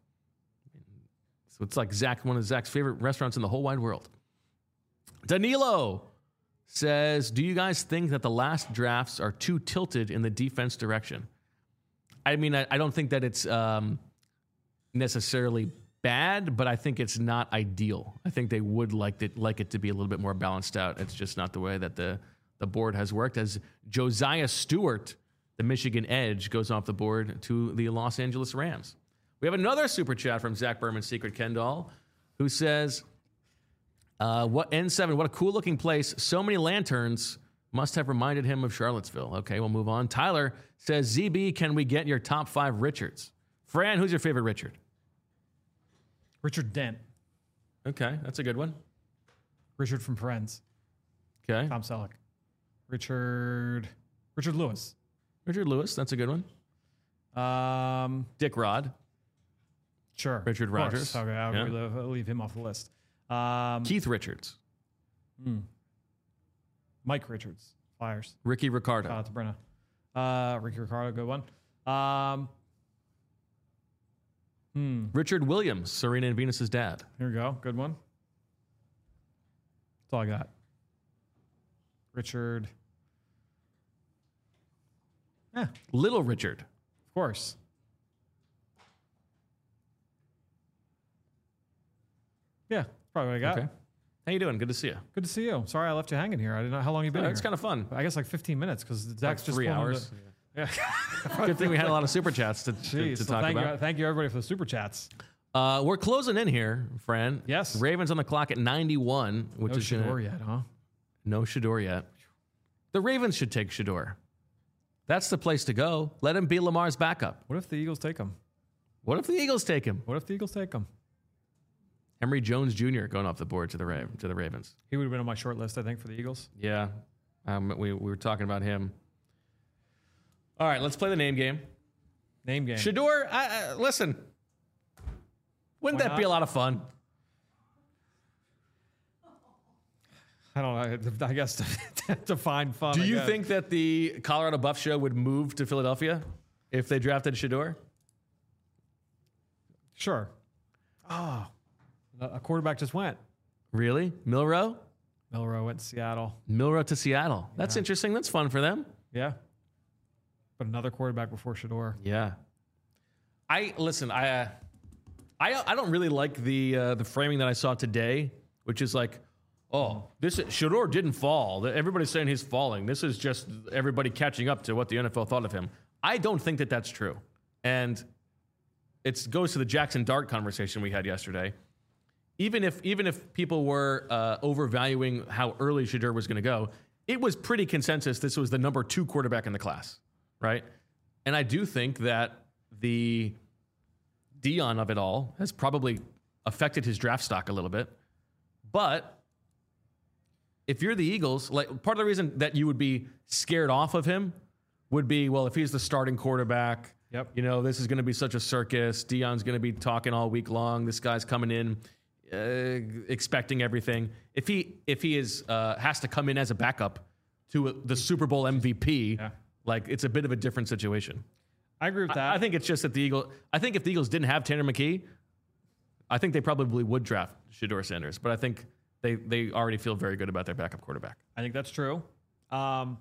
So it's like Zach, one of Zach's favorite restaurants in the whole wide world. Danilo says, do you guys think that the last drafts are too tilted in the defense direction? I mean, I, I don't think that it's um, necessarily bad, but I think it's not ideal. I think they would like it, like it to be a little bit more balanced out. It's just not the way that the, the board has worked. As Josiah Stewart, the Michigan Edge, goes off the board to the Los Angeles Rams. We have another super chat from Zach Berman, Secret Kendall, who says, uh, "What N seven? What a cool looking place! So many lanterns. Must have reminded him of Charlottesville." Okay, we'll move on. Tyler says, "Z B, can we get your top five Richards?" Fran, who's your favorite Richard? Richard Dent. Okay, that's a good one. Richard from Friends. Okay, Tom Selleck. Richard. Richard Lewis. Richard Lewis, that's a good one. Um, Dick Rod. Sure. Richard Rogers. Okay, I'll Yeah. leave, I'll leave him off the list. Um, Keith Richards. hmm. Mike Richards. Flyers. Ricky Ricardo. Shout out to Brenna. Uh, Ricky Ricardo, good one. Um, hmm. Richard Williams, Serena and Venus's dad. Here we go. Good one. That's all I got. Richard. Yeah, of Little Richard. course. Yeah, probably what I got. Okay. How you doing? Good to see you. Good to see you. Sorry I left you hanging here. I didn't know how long you've been Oh, here. it's kind of fun. I guess like fifteen minutes because Zach's Like just three pulling hours. The, yeah. Good thing we had a lot of super chats to, to, Jeez, to so talk thank about. you, thank you everybody for the super chats. Uh, we're closing in here, Fran. Yes. Ravens on the clock at ninety-one, which No is gonna- Shador yet, huh? no Shador yet. The Ravens should take Shador. That's the place to go. Let him be Lamar's backup. What if the Eagles take him? What if the Eagles take him? What if the Eagles take him? Emory Jones Junior going off the board to the Ra- to the Ravens. He would have been on my short list, I think, for the Eagles. Yeah, um, we we were talking about him. All right, let's play the name game. Name game. Shador, I, I, listen, wouldn't Why that be a not? lot of fun? I don't know. I guess to, to find fun. Do I you guess. think that the Colorado Buff Show would move to Philadelphia if they drafted Shador? Sure. Oh, a quarterback just went. Really? Milrow? Milrow went to Seattle. Milrow to Seattle. That's Yeah. interesting. That's fun for them. Yeah. But another quarterback before Shador. Yeah. I listen. I uh, I I don't really like the uh, the framing that I saw today, which is like, oh, this Shador didn't fall. Everybody's saying he's falling. This is just everybody catching up to what the N F L thought of him. I don't think that that's true, and it goes to the Jackson Dart conversation we had yesterday. Even if even if people were uh, overvaluing how early Shador was going to go, it was pretty consensus this was the number two quarterback in the class, right? And I do think that the Dion of it all has probably affected his draft stock a little bit. But if you're the Eagles, like part of the reason that you would be scared off of him would be, well, if he's the starting quarterback, Yep. you know, this is going to be such a circus. Dion's going to be talking all week long. This guy's coming in uh, expecting everything. If he if he is uh, has to come in as a backup to a, the Super Bowl M V P, Yeah. like it's a bit of a different situation. I agree with that. I, I think it's just that the Eagles. I think if the Eagles didn't have Tanner McKee, I think they probably would draft Shador Sanders. But I think they they already feel very good about their backup quarterback. I think that's true. Um,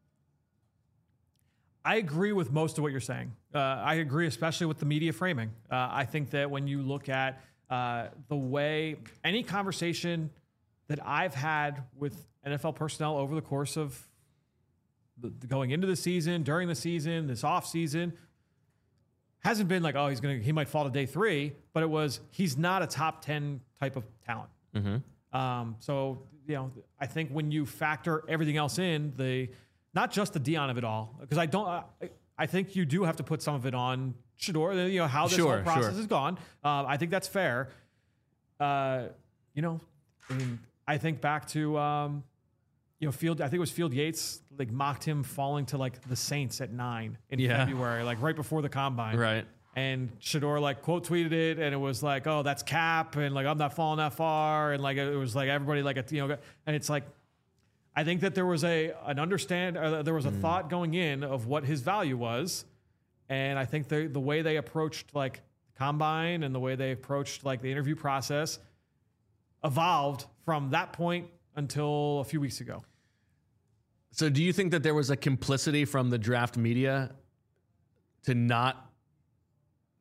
I agree with most of what you're saying. Uh, I agree, especially with the media framing. Uh, I think that when you look at uh, the way any conversation that I've had with N F L personnel over the course of the, going into the season, during the season, this off season, hasn't been like, oh, he's gonna he might fall to day three, but it was he's not a top ten type of talent. Mm-hmm. Um, so, you know, I think when you factor everything else in, the not just the Dion of it all, because I don't, I, I think you do have to put some of it on Shador, you know, how this Sure, whole process sure. has gone. Um, I think that's fair. Uh, you know, I mean, I think back to, um, you know, Field, I think it was Field Yates, like mocked him falling to like the Saints at nine in Yeah. February, like right before the combine. Right. And Shador like quote tweeted it, and it was like, "Oh, that's cap," and like I'm not falling that far, and like it was like everybody like a, you know, and it's like, I think that there was a an understand, uh, there was a thought going in of what his value was, and I think the the way they approached like combine and the way they approached like the interview process evolved from that point until a few weeks ago. So do you think that there was a complicity from the draft media to not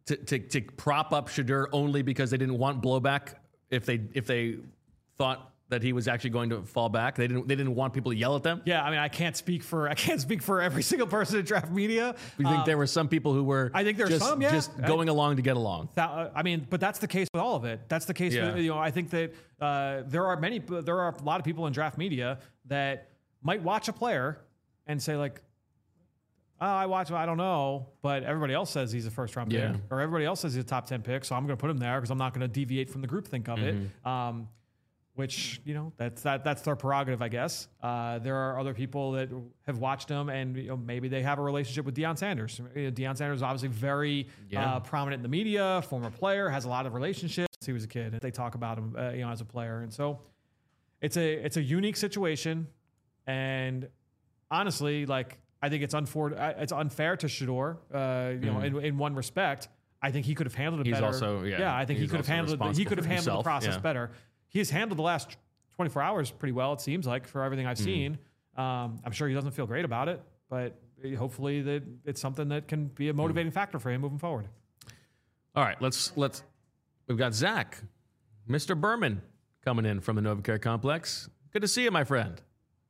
to, to to prop up Shedeur only because they didn't want blowback if they if they thought that he was actually going to fall back. They didn't they didn't want people to yell at them. Yeah, I mean, I can't speak for I can't speak for every single person at Draft Media. You think um, there were some people who were I think there's just, some, yeah. just going along to get along. That, uh, I mean, but that's the case with all of it. That's the case Yeah. with, you know, I think that uh, there are many, there are a lot of people in Draft Media that might watch a player and say like, oh, I watch, I don't know, but everybody else says he's a first round Yeah. pick, or everybody else says he's a top ten pick, so I'm going to put him there because I'm not going to deviate from the groupthink of Mm-hmm. it. Um, which, you know, that's that, that's their prerogative, I guess. Uh, there are other people that have watched him, and you know, maybe they have a relationship with Deion Sanders. You know, Deion Sanders is obviously very Yeah. uh, prominent in the media, former player, has a lot of relationships. He was a kid. They talk about him, uh, you know, as a player, and so it's a it's a unique situation. And honestly, like I think it's unfor- uh, it's unfair to Shedeur, uh, you know, in, in one respect. I think he could have handled it He's better. also- yeah, yeah. I think he he's could have also handled it. He responsible could have for handled the himself, process yeah. better. He's handled the last twenty-four hours pretty well. It seems like for everything I've seen. Um, I'm sure he doesn't feel great about it, but hopefully that it's something that can be a motivating factor for him moving forward. All right, let's let's. We've got Zach, Mister Berman, coming in from the NovaCare Complex. Good to see you, my friend.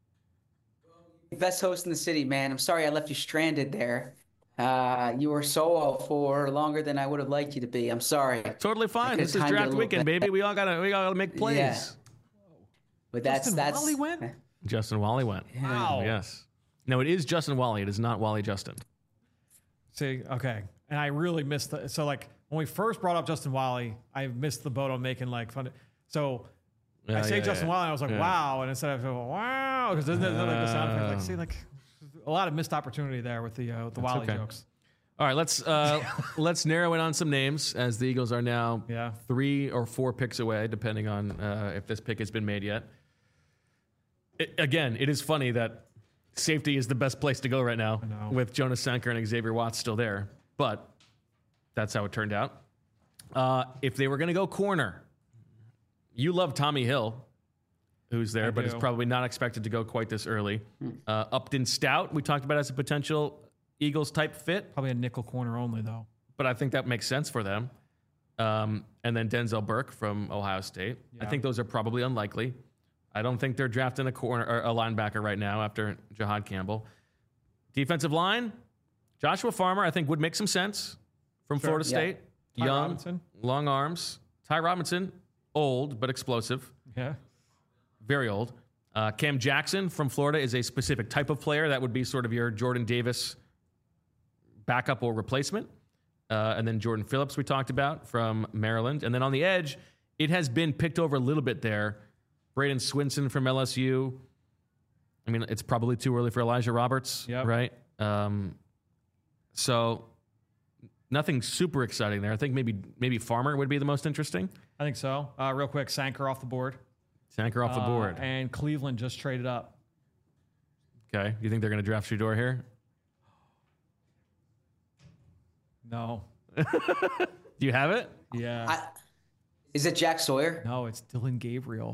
Best host in the city, man. I'm sorry I left you stranded there. Uh, you were solo for longer than I would have liked you to be. I'm sorry. Totally fine. could've This is timed it a draft little weekend, bit. baby. We all gotta we all gotta make plays. Yeah. But that's Justin that's Wally went? Justin Wally went. Wow. Yes. No, it is Justin Wally. It is not Wally Justin. See, okay. And I really missed the, so like when we first brought up Justin Wally, I missed the boat on making like fun. So Yeah, I say yeah, Justin yeah. Wally, and I was like, Yeah. wow. And instead of wow, because doesn't that like the sound effect? Like, see, like a lot of missed opportunity there with the, uh, with the Wally okay. jokes. All right, let's uh, let's narrow in on some names as the Eagles are now Yeah. three or four picks away, depending on uh, if this pick has been made yet. It, again, it is funny that safety is the best place to go right now know. with Jonas Sanker and Xavier Watts still there, but that's how it turned out. Uh, if they were going to go corner, you love Tommy Hill, who's there, I but do. is probably not expected to go quite this early. Uh, Upton Stout, we talked about as a potential Eagles type fit, Probably a nickel corner only though. but I think that makes sense for them. Um, and then Denzel Burke from Ohio State. I Yeah. think those are probably unlikely. I don't think they're drafting a corner or a linebacker right now after Jahad Campbell. Defensive line, Joshua Farmer, I think would make some sense from Sure. Florida Yeah. State. Ty Young, Robinson. long arms. Ty Robinson, old but explosive, Yeah. very old. Uh, Cam Jackson from Florida is a specific type of player that would be sort of your Jordan Davis backup or replacement. Uh, and then Jordan Phillips, we talked about from Maryland. And then on the edge, it has been picked over a little bit there. Braden Swinson from L S U. I mean, it's probably too early for Elijah Roberts, Yep. right? Um, so nothing super exciting there. I think maybe maybe Farmer would be the most interesting. I think so. Uh, real quick, Sanker off the board. Sanker off the Uh, board. and Cleveland just traded up. Okay. You think they're going to draft Shedeur here? No. Do you have it? Yeah. I, is it Jack Sawyer? no, it's Dylan Gabriel.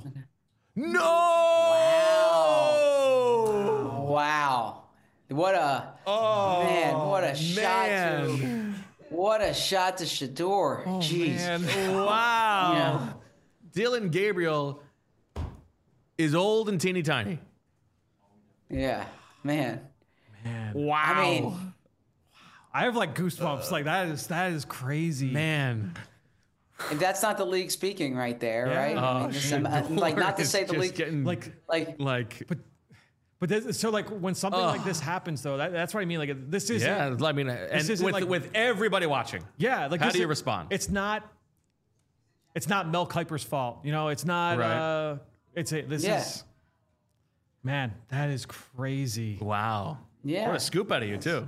No! Wow. What a Oh, man, what a shot man. to what a shot to Shedeur. Jeez. Wow. Yeah. Dylan Gabriel is old and teeny tiny. Yeah. Man. Wow. I mean, I have like goosebumps. like that is that is crazy. man. and that's not the league speaking right there, Yeah. right? I Oh, mean, this- shit. I'm- like not to It's say the just league getting Like like like but but this, so like when something Ugh. like this happens though, that, that's what I mean. Like this is yeah. I mean, and isn't with like- with everybody watching. yeah. Like How this do you is- respond? It's not. It's not Mel Kiper's fault. You know. It's not. Right. Uh, it's a. This Yeah. is. Man, that is crazy. Wow. Yeah. What a scoop out of you too.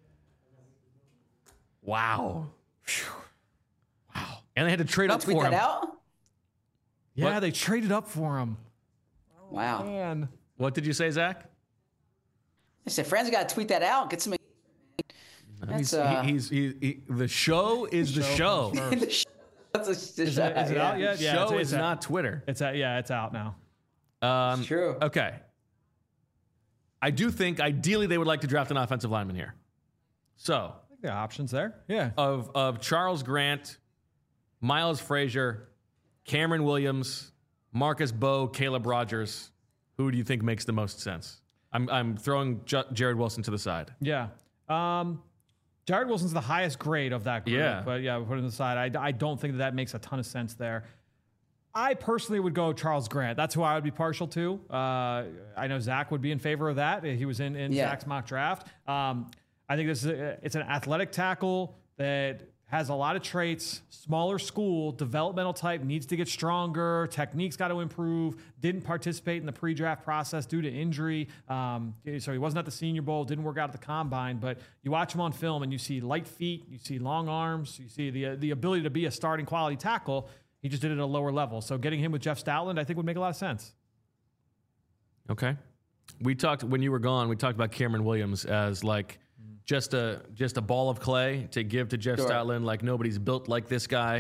Wow. Phew. Wow. And they had to trade up tweet for that him. out? Yeah, What? they traded up for him. Wow. Man. What did you say, Zach? I said, friends got to tweet that out. Get some. That's He's, uh. he, he's he, he, the show is the show. comes That's a, Is it, is it out yet? Yeah, show it's, is it's out. not Twitter. It's out. Yeah, it's out now. Um, It's true. Okay. I do think ideally they would like to draft an offensive lineman here. So think there are options there. Yeah. Of of Charles Grant, Miles Frazier, Cameron Williams, Marcus Bowe, Caleb Rogers. Who do you think makes the most sense? I'm I'm throwing J- Jared Wilson to the side. Yeah. Um, Jared Wilson's the highest grade of that group. Yeah. But yeah, we put it on the side. I, I don't think that, that makes a ton of sense there. I personally would go Charles Grant. That's who I would be partial to. Uh, I know Zach would be in favor of that. He was in, in Yeah. Zach's mock draft. Um, I think this is a, it's an athletic tackle that has a lot of traits, smaller school, developmental type, needs to get stronger, technique's got to improve, didn't participate in the pre-draft process due to injury. Um, so he wasn't at the Senior Bowl, didn't work out at the Combine, but you watch him on film and you see light feet, you see long arms, you see the, the ability to be a starting quality tackle. He just did it at a lower level. So getting him with Jeff Stoutland, I think would make a lot of sense. Okay. We talked, when you were gone, we talked about Cameron Williams as like, Just a just a ball of clay to give to Jeff Sure. Stoutland. Like nobody's built like this guy,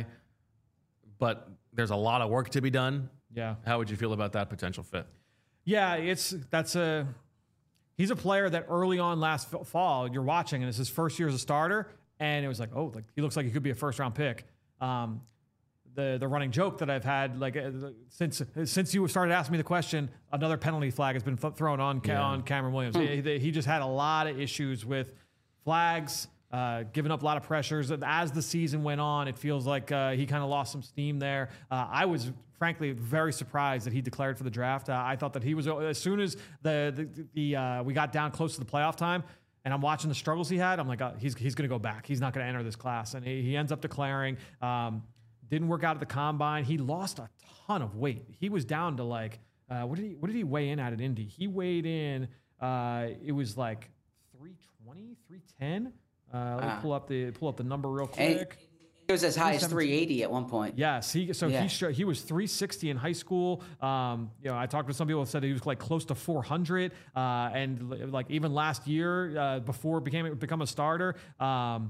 but there's a lot of work to be done. Yeah. How would you feel about that potential fit? Yeah, it's that's a he's a player that early on last f- fall you're watching and it's his first year as a starter, and it was like, oh, like he looks like he could be a first round pick. Um, the the running joke that I've had like uh, since since you started asking me the question, another penalty flag has been th- thrown on Ca- Yeah. on Cameron Williams. he, he just had a lot of issues with flags, uh, giving up a lot of pressures. As the season went on, it feels like uh, he kind of lost some steam there. Uh, I was frankly very surprised that he declared for the draft. Uh, I thought that he was, as soon as the the, the uh, we got down close to the playoff time, and I'm watching the struggles he had, I'm like, oh, he's he's going to go back. He's not going to enter this class, and he, he ends up declaring. Um, didn't work out at the Combine. He lost a ton of weight. He was down to like uh, what did he what did he weigh in at at Indy? He weighed in. Uh, it was like three twenty, three ten. Uh, let me Ah. pull up the pull up the number real And quick. it was as high as seventeen. three eighty at one point. Yes, he so Yeah. he sh- he was three sixty in high school. Um, you know, I talked to some people that said he was like close to four hundred, uh, and li- like even last year uh, before became become a starter. Um,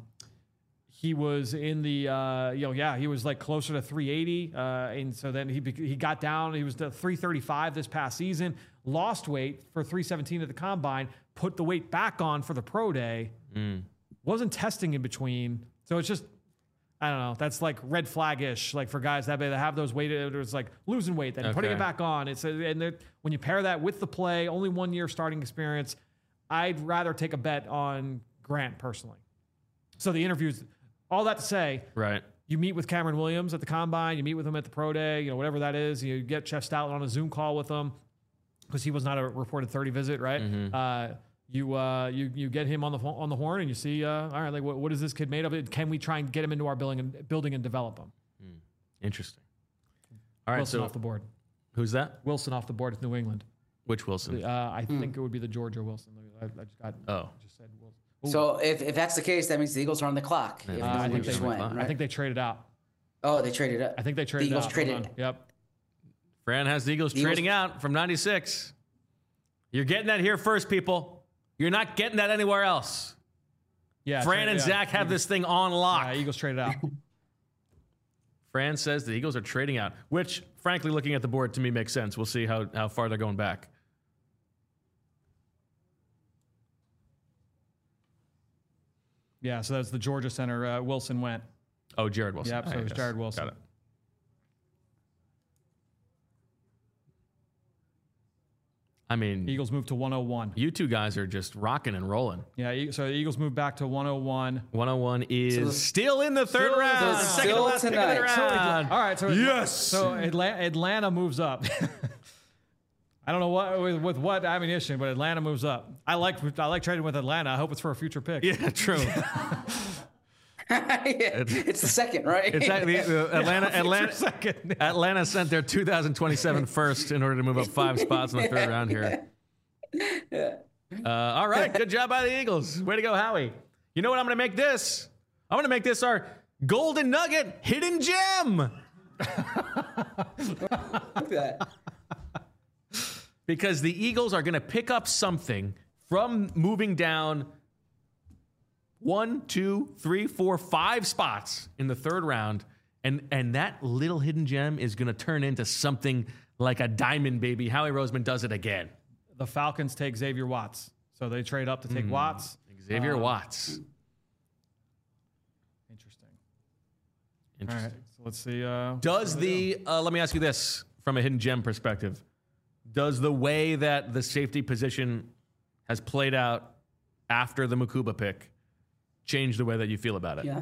he was in the, uh, you know, yeah, he was like closer to three eighty. Uh, and so then he, bec- he got down, he was to three thirty-five this past season, lost weight for three seventeen at the Combine, put the weight back on for the pro day, wasn't testing in between. So it's just, I don't know, that's like red flag-ish, like for guys that, that have those weight, it's like losing weight, then putting Okay. it back on. It's a, and they're- when you pair that with the play, only one year starting experience, I'd rather take a bet on Grant personally. So the interviews, all that to say, Right. you meet with Cameron Williams at the Combine, you meet with him at the Pro Day, you know, whatever that is. You get Jeff Stoutland on a Zoom call with him because he was not a reported thirty visit, right? Uh, you uh, you you get him on the on the horn and you see, uh, all right, like what, what is this kid made of? Can we try and get him into our building and building and develop him? Interesting. All right. Wilson So off the board. who's that? Wilson off the board with New England. Which Wilson? Uh, I think it would be the Georgia Wilson. I, I just got. Oh. just said Wilson. So if, if that's the case, that means the Eagles are on the clock. If Uh, New I England think just they- went, I I right? think they traded out. Oh, they traded up. I think they The traded Eagles out. traded. Hold on. Yep. Fran has the Eagles, Eagles- trading out from ninety-six. You're getting that here first, people. You're not getting that anywhere else. Yeah. Fran tra- and yeah. Zach have this thing on lock. Yeah, Eagles traded out. Fran says the Eagles are trading out, which, frankly, looking at the board to me makes sense. We'll see how, how far they're going back. Yeah, so that's the Georgia center. Uh, Wilson went. Oh, Jared Wilson. Yep, so Ah, it was yes. Jared Wilson. Got it. I mean, Eagles moved to one oh one. you two guys are just rocking and rolling. Yeah, E- so the Eagles moved back to one oh one. one oh one is So- still in the third Still- round. so Second to still last pick of the tonight. So round. All right, so yes. so Atlanta, Atlanta moves up. I don't know what with, with what ammunition, but Atlanta moves up. I like I like trading with Atlanta. I hope it's for a future pick. Yeah, true. Yeah, it's the second, right? It's actually uh, Atlanta. Future Atlanta. second. Atlanta sent their two thousand twenty-seven first in order to move up five spots in the third round here. Uh, all right, good job by the Eagles. Way to go, Howie. You know what I'm going to make this? I'm going to make this our golden nugget hidden gem. Look at that. Because the Eagles are going to pick up something from moving down one, two, three, four, five spots in the third round. And, and that little hidden gem is going to turn into something like a diamond, baby. Howie Roseman does it again. The Falcons take Xavier Watts, so they trade up to take Watts. Xavier Um, Watts. Interesting. All right, so let's see. Uh, Does the, uh, let me ask you this from a hidden gem perspective. Does the way that the safety position has played out after the Mukuba pick change the way that you feel about it? Yeah.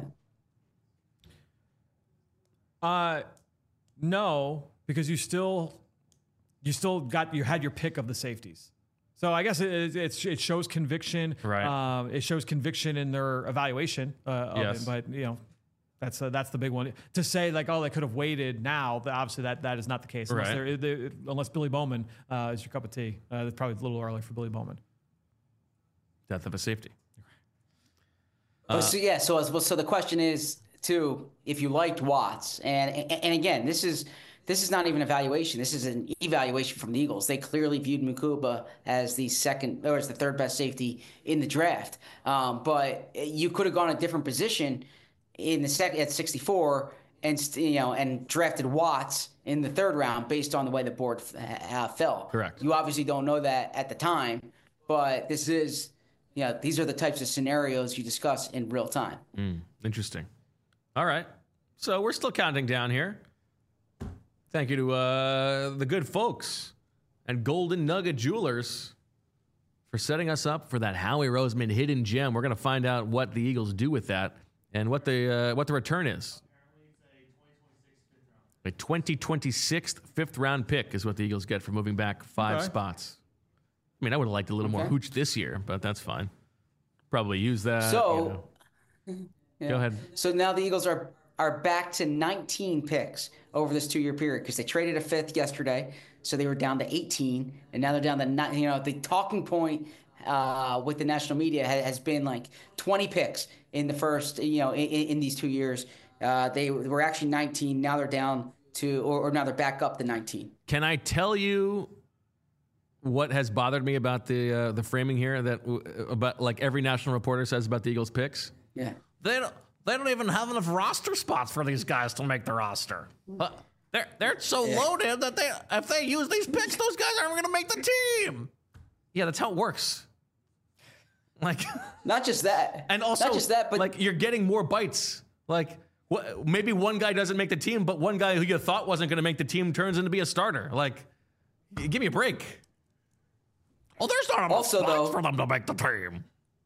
Uh, no, because you still, you still got, you had your pick of the safeties. So I guess it, it, it shows conviction. Right. Um, it shows conviction in their evaluation uh, of Yes. it. But, you know, that's uh, that's the big one. To say, like, oh, they could have waited now, but obviously that, that is not the case. Unless, Right. they're, they, unless Billy Bowman uh, is your cup of tea. Uh, it's probably a little early for Billy Bowman. Death of a safety. Uh, so yeah, so as- so the question is too, if you liked Watts, and, and and again, this is this is not even evaluation. This is an evaluation from the Eagles. They clearly viewed Mukuba as the second or as the third best safety in the draft. Um, but you could have gone a different position in the second at sixty-four, and st- you know, and drafted Watts in the third round based on the way the board uh, fell. Correct. You obviously don't know that at the time, but this is. Yeah, these are the types of scenarios you discuss in real time. Mm, interesting. All right. So we're still counting down here. Thank you to uh, the good folks at Golden Nugget Jewelers for setting us up for that Howie Roseman hidden gem. We're going to find out what the Eagles do with that and what the uh, what the return is. A twenty twenty-six fifth round pick is what the Eagles get for moving back five Okay. spots. I mean, I would have liked a little more Okay. hooch this year, but that's fine. Probably use that. So, you know. Yeah. Go ahead. So now the Eagles are are back to nineteen picks over this two year period because they traded a fifth yesterday, so they were down to eighteen, and now they're down to nine. You know, the talking point uh, with the national media ha- has been like twenty picks in the first. You know, in, in these two years, uh, they were actually nineteen. Now they're down to, or, or now they're back up to nineteen. Can I tell you what has bothered me about the uh, the framing here that uh, about like every national reporter says about the Eagles picks? Yeah. They don't they don't even have enough roster spots for these guys to make the roster. Uh, they're they're so Yeah. loaded that they if they use these picks, those guys aren't going to make the team. Yeah, that's how it works. Like, Not just that, and also not just that, but like you're getting more bites. Like, wh- maybe one guy doesn't make the team, but one guy who you thought wasn't going to make the team turns into be a starter. Like, g- give me a break. Oh, there's not enough Also, spots though- for them to make the team.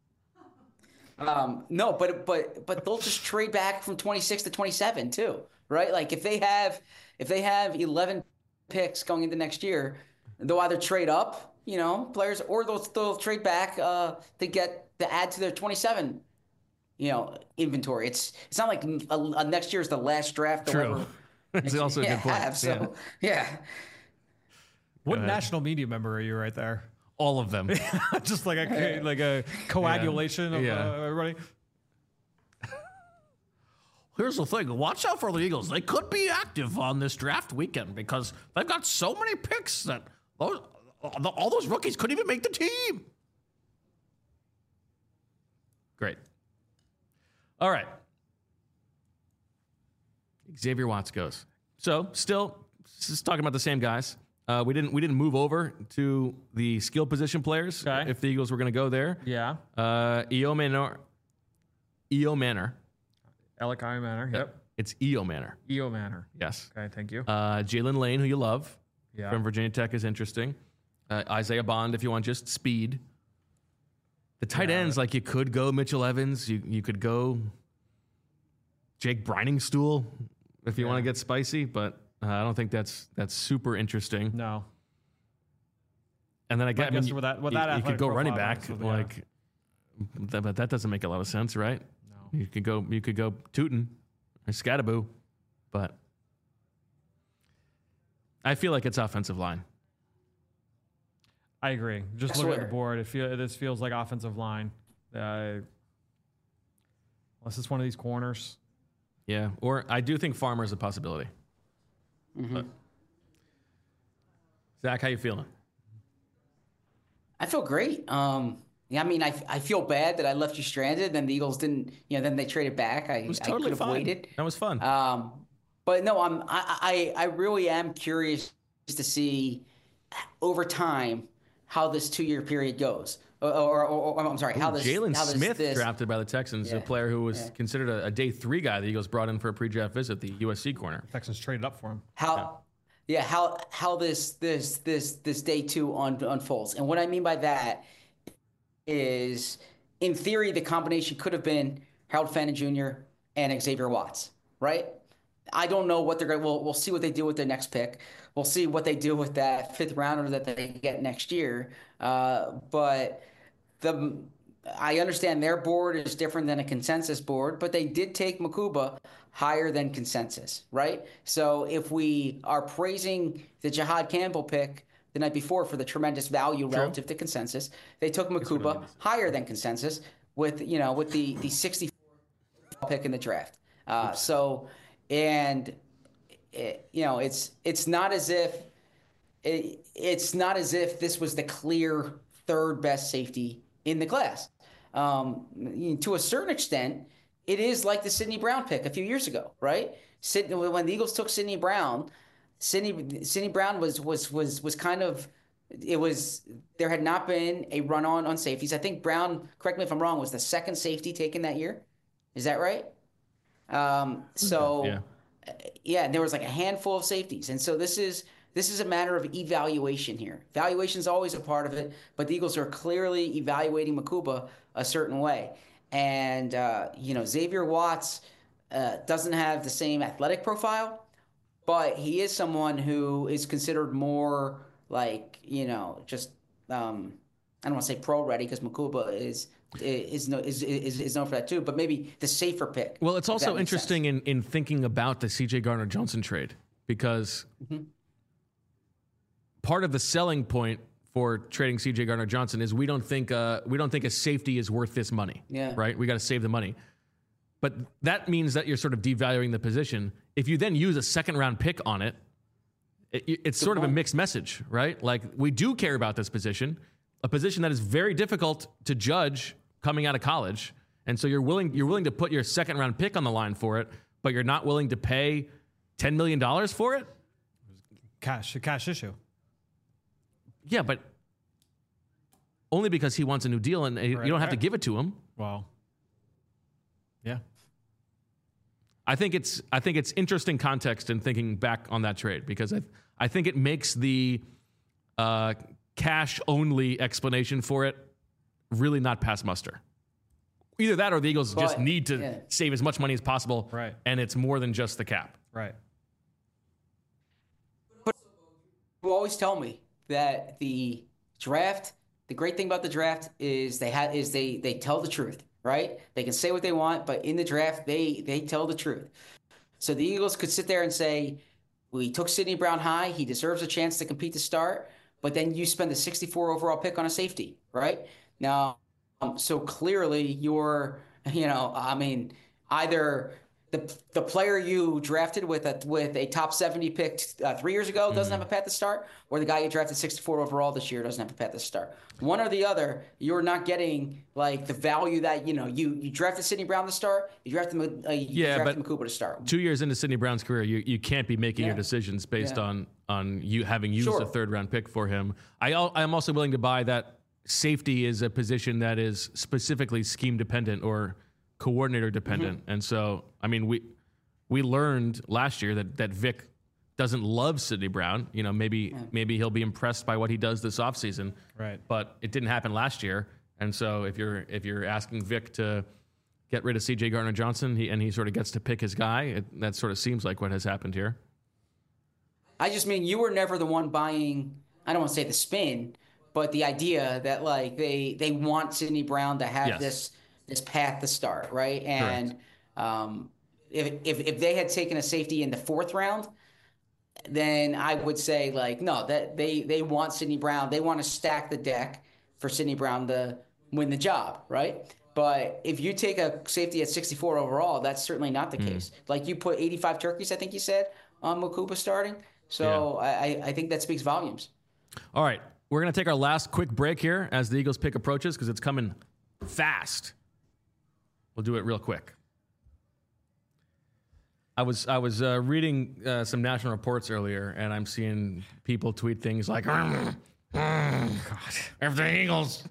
Um, no, but but but they'll just trade back from twenty-six to twenty-seven too, right? Like if they have if they have eleven picks going into next year, they'll either trade up, you know, players, or they'll they'll trade back uh, to get to add to their twenty-seven, you know, inventory. It's it's not like a, a next year is the last draft. they'll True. ever- That's also a yeah, good point. have, so yeah. What ahead. national media member are you right there? All of them. Just like a like a coagulation of Yeah. uh, everybody. Here's the thing. Watch out for the Eagles. They could be active on this draft weekend because they've got so many picks that those, all those rookies couldn't even make the team. Great. All right. Xavier Watts goes. So still, just talking about the same guys. Uh, we didn't we didn't move over to the skill position players Okay. if the Eagles were going to go there. Yeah. Uh, Eo Manor. Eo Manor. Alec I. Manor. Yep. It's Eo Manor. E O Manor. Yes. Okay, thank you. Uh, Jalen Lane, who you love Yeah. from Virginia Tech, is interesting. Uh, Isaiah Bond, if you want just speed. The tight Yeah. ends, like you could go Mitchell Evans. You you could go Jake Briningstool if you Yeah. want to get spicy, but uh, I don't think that's that's super interesting. No. And then I, I guess, I mean, guess with that- with you, that you could athletic go running profile, back, obviously, yeah. like, that, but that doesn't make a lot of sense, right? No. You could go you could go Tootin or Scattaboo, but I feel like it's offensive line. I agree. Just I looking at swear. the board, it feel, this feels like offensive line. Uh, unless it's one of these corners. Yeah, or I do think Farmer is a possibility. But- Zach, how you feeling? I feel great. Um, yeah, I mean, I, I feel bad that I left you stranded. Then the Eagles didn't, you know, then they traded back. I, It was I totally could have fine. waited. That was fun. Um, but no, I'm I, I I really am curious to see over time how this two-year period goes. Or, or, or, or I'm sorry, how this Jalen how this, Smith this, drafted by the Texans, yeah, a player who was yeah. considered a, a day three guy. The Eagles brought in for a pre-draft visit, the U S C corner. Texans traded up for him. How, yeah, yeah how how this this this this day two un, unfolds, and what I mean by that is, in theory, the combination could have been Harold Fannin Junior and Xavier Watts, right? I don't know what they're going to, we'll, we'll see what they do with their next pick. We'll see what they do with that fifth rounder that they get next year. Uh, but the, I understand their board is different than a consensus board, but they did take Mukuba higher than consensus, right? So if we are praising the Jihad Campbell pick the night before for the tremendous value True. relative to consensus, they took Mukuba higher than consensus with, you know, with the, the sixty-fourth pick in the draft. Uh, so, and it, you know, it's it's not as if it, it's not as if this was the clear third best safety in the class. Um, to a certain extent, it is like the Sidney Brown pick a few years ago, right? Sid, when the Eagles took Sidney Brown, Sidney Sidney Brown was was was was kind of it was there had not been a run on on safeties. I think Brown, correct me if I'm wrong, was the second safety taken that year. Is that right? Um, so yeah. yeah, there was like a handful of safeties, and so this is this is a matter of evaluation here. Evaluation is always a part of it, but the Eagles are clearly evaluating Mukuba a certain way, and uh, you know Xavier Watts uh, doesn't have the same athletic profile. But he is someone who is considered more like, you know, just um, I don't want to say pro ready because Mukuba is is, no, is is is known for that too. But maybe the safer pick. Well, it's also interesting in, in thinking about the C J Gardner-Johnson trade because mm-hmm. part of the selling point for trading C J Gardner-Johnson is we don't think uh, we don't think a safety is worth this money. Yeah. Right. We got to save the money. But that means that you're sort of devaluing the position. If you then use a second round pick on it, it it's Good sort point. of a mixed message, right? Like we do care about this position, a position that is very difficult to judge coming out of college. And so you're willing you're willing to put your second round pick on the line for it, but you're not willing to pay ten million dollars for it? Cash, a cash issue. Yeah, but only because he wants a new deal and right, you don't have right. to give it to him. Wow. Yeah. I think it's I think it's interesting context in thinking back on that trade because I I think it makes the uh, cash only explanation for it really not pass muster. Either that or the Eagles but, just need to yeah. save as much money as possible, right? And it's more than just the cap, right? But you always tell me that the draft, the great thing about the draft is they ha- is they they tell the truth. Right? They can say what they want, but in the draft, they they tell the truth. So the Eagles could sit there and say, we took Sidney Brown high. He deserves a chance to compete to start. But then you spend the sixty-four overall pick on a safety, right? Now, um, so clearly you're, you know, I mean, either the the player you drafted with a, with a top seventy pick uh, three years ago doesn't mm-hmm. have a path to start, or the guy you drafted sixty-four overall this year doesn't have a path to start. One or the other, you're not getting like the value that, you know, you, you drafted Sidney Brown to start, you drafted, uh, you yeah, drafted but Mukuba to start. Two years into Sidney Brown's career, you, you can't be making yeah. your decisions based yeah. on on you having used sure. a third round pick for him. I I'm also willing to buy that safety is a position that is specifically scheme dependent or coordinator dependent, mm-hmm. and so I mean we. We learned last year that, that Vic doesn't love Sidney Brown. You know, maybe yeah. maybe he'll be impressed by what he does this offseason. Right. But it didn't happen last year. And so if you're if you're asking Vic to get rid of C J Gardner-Johnson he, and he sort of gets to pick his guy, it, that sort of seems like what has happened here. I just mean you were never the one buying, I don't want to say the spin, but the idea that like they they want Sidney Brown to have yes. this this path to start, right? And um If, if if they had taken a safety in the fourth round, then I would say like no, that they they want Sidney Brown. They want to stack the deck for Sidney Brown to win the job, right? But if you take a safety at sixty-four overall, that's certainly not the mm. case. Like you put eighty-five turkeys, I think you said, on Mukuba starting. So yeah. I I think that speaks volumes. All right, we're gonna take our last quick break here as the Eagles pick approaches because it's coming fast. We'll do it real quick. I was I was uh, reading uh, some national reports earlier, and I'm seeing people tweet things like, mm, mm, if the Eagles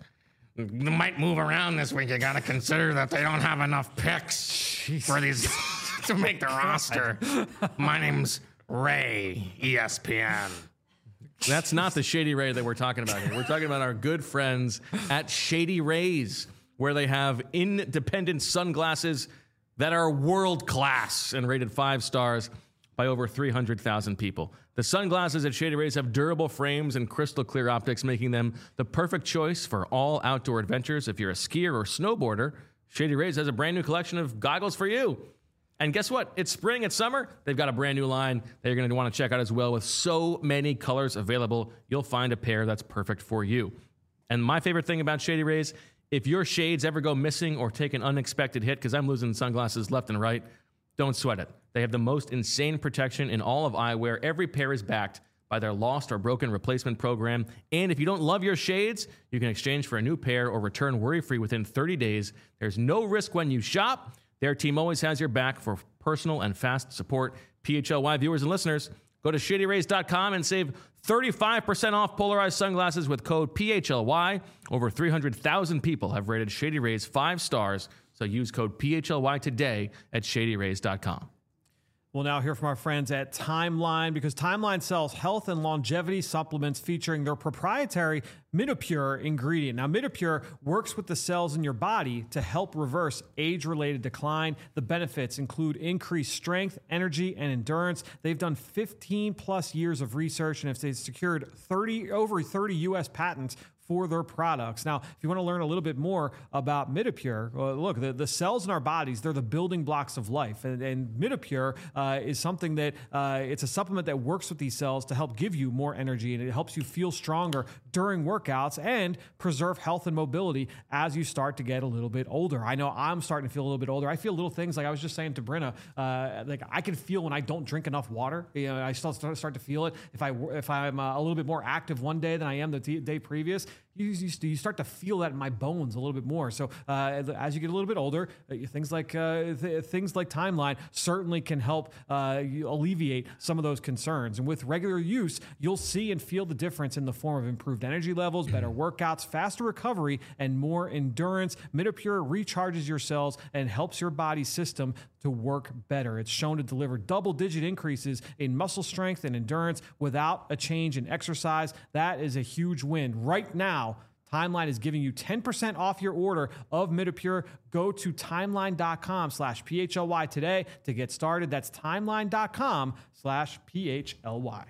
might move around this week, you got to consider that they don't have enough picks Jeez. for these to make the roster. My name's Ray, E S P N. That's not the Shady Ray that we're talking about here. We're talking about our good friends at Shady Rays, where they have independent sunglasses that are world class and rated five stars by over three hundred thousand people. The sunglasses at Shady Rays have durable frames and crystal clear optics, making them the perfect choice for all outdoor adventures. If you're a skier or snowboarder, Shady Rays has a brand new collection of goggles for you. And guess what? It's spring, it's summer. They've got a brand new line that you're going to want to check out as well. With so many colors available, you'll find a pair that's perfect for you. And my favorite thing about Shady Rays, if your shades ever go missing or take an unexpected hit, because I'm losing sunglasses left and right, don't sweat it. They have the most insane protection in all of eyewear. Every pair is backed by their lost or broken replacement program. And if you don't love your shades, you can exchange for a new pair or return worry-free within thirty days. There's no risk when you shop. Their team always has your back for personal and fast support. P H L Y viewers and listeners, go to shady rays dot com and save thirty-five percent off polarized sunglasses with code P H L Y. Over three hundred thousand people have rated Shady Rays five stars, so use code P H L Y today at shady rays dot com. We'll now hear from our friends at Timeline, because Timeline sells health and longevity supplements featuring their proprietary Midopure ingredient. Now, Midopure works with the cells in your body to help reverse age-related decline. The benefits include increased strength, energy, and endurance. They've done fifteen plus years of research, and they've secured thirty over thirty U S patents for their products. Now, if you want to learn a little bit more about Midopure, well, look, the, the cells in our bodies, they're the building blocks of life. And, and Midopure uh, is something that, uh, it's a supplement that works with these cells to help give you more energy, and it helps you feel stronger during workouts and preserve health and mobility as you start to get a little bit older. I know I'm starting to feel a little bit older. I feel little things, like I was just saying to Brenna, uh, like I can feel when I don't drink enough water. You know, I still start, start to feel it. If, I, if I'm uh, a little bit more active one day than I am the t- day previous, You, you, you start to feel that in my bones a little bit more. So uh, as you get a little bit older, uh, things like uh, th- things like Timeline certainly can help uh, you alleviate some of those concerns. And with regular use, you'll see and feel the difference in the form of improved energy levels, better workouts, faster recovery, and more endurance. Midopure recharges your cells and helps your body system to work better. It's shown to deliver double-digit increases in muscle strength and endurance without a change in exercise. That is a huge win. Right now, Timeline is giving you ten percent off your order of Midopure. Go to timeline.com slash PHLY today to get started. That's timeline.com slash PHLY.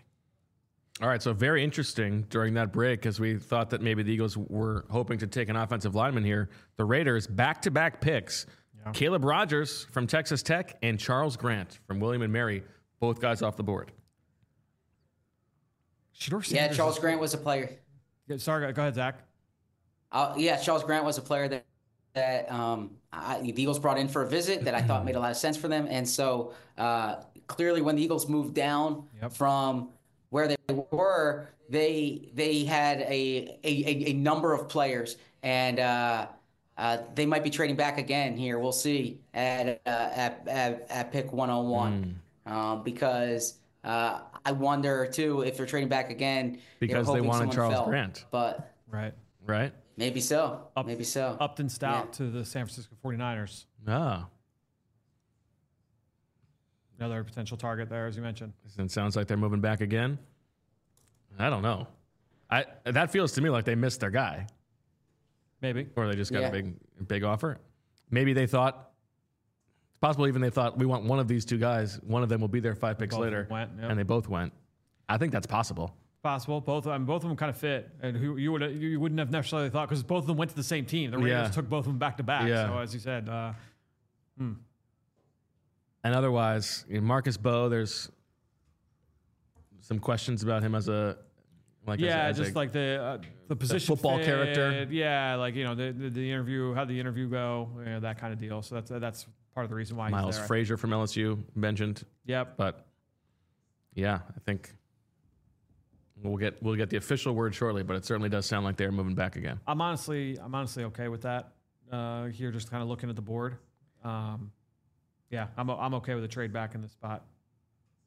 All right, so very interesting during that break, because we thought that maybe the Eagles were hoping to take an offensive lineman here. The Raiders, back-to-back picks. Yeah. Caleb Rogers from Texas Tech and Charles Grant from William and Mary, both guys off the board. Yeah, Charles Grant was a player. Sorry, go ahead, Zach. Uh, yeah, Charles Grant was a player that that um, I, the Eagles brought in for a visit that I thought made a lot of sense for them. And so uh, clearly when the Eagles moved down yep. from where they were, they they had a a, a number of players, and uh, uh, they might be trading back again here. We'll see at uh, at, at at pick one oh one mm. um, because uh, I wonder too if they're trading back again because they wanted Charles fell, Grant. But right, right. Maybe so. Up, Maybe so. Upton Stout yeah. to the San Francisco forty-niners. Ah. Another potential target there, as you mentioned. It sounds like they're moving back again. I don't know. I that feels to me like they missed their guy. Maybe. Or they just got yeah. a big big offer. Maybe they thought, it's possible even they thought, we want one of these two guys. One of them will be there five picks both later. Went, yep. And they both went. I think that's possible. Possible. Both of them, both of them kind of fit, and who you would you wouldn't have necessarily thought, because both of them went to the same team. The Raiders yeah. took both of them back to back. Yeah. So as you said, uh, hmm. and otherwise, you know, Marcus Bowe, there's some questions about him as a like yeah, as, as just a, like the uh, the position football fit, character. Yeah, like you know the the, the interview, how the interview go, you know, that kind of deal. So that's uh, that's part of the reason why Miles he's there. Frazier from L S U mentioned. Yep. But yeah, I think. We'll get we'll get the official word shortly, but it certainly does sound like they're moving back again. I'm honestly I'm honestly okay with that. Uh, here, just kind of looking at the board. Um, yeah, I'm I'm okay with a trade back in this spot.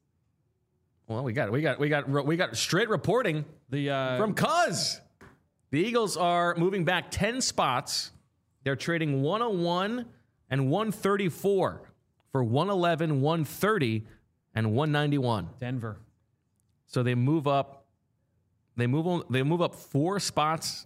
Well, we got we got we got we got straight reporting the uh, from Cuz. The Eagles are moving back ten spots. They're trading one oh one and one thirty-four for one eleven, one thirty, and one ninety-one. Denver. So they move up. They move on. They move up four spots.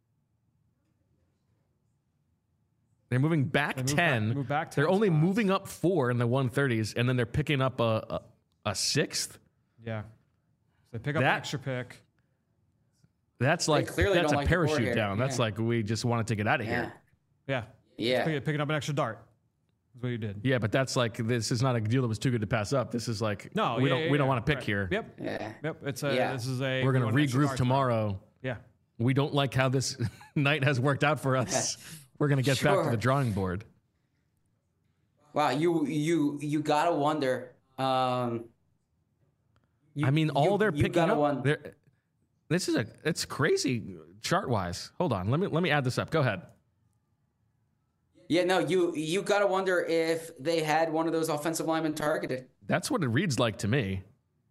They're moving back They move ten. back- they move back ten They're only spots. moving up four in the one thirties, and then they're picking up a a, a sixth. Yeah. So they pick up That- an extra pick. That's like clearly that's don't a like the board parachute here. down. That's Yeah. like we just wanted to get out of Yeah. here. Yeah. Yeah. Pick, picking up an extra dart. That's what you did. Yeah, but that's like this is not a deal that was too good to pass up. This is like No, we yeah, don't yeah, we don't yeah. want to pick Right. here. Yep. Yeah. Yep. It's a. Yeah. This is a. We're we gonna want an extra regroup dart. tomorrow. Yeah. We don't like how this night has worked out for us. We're gonna get back to Sure. the drawing board. Wow, you you you gotta wonder. Um, you- I mean, all you- they're you picking gotta up. won- they're- This is a it's crazy chart wise. Hold on, let me let me add this up. Go ahead. Yeah, no, you you gotta wonder if they had one of those offensive linemen targeted. That's what it reads like to me.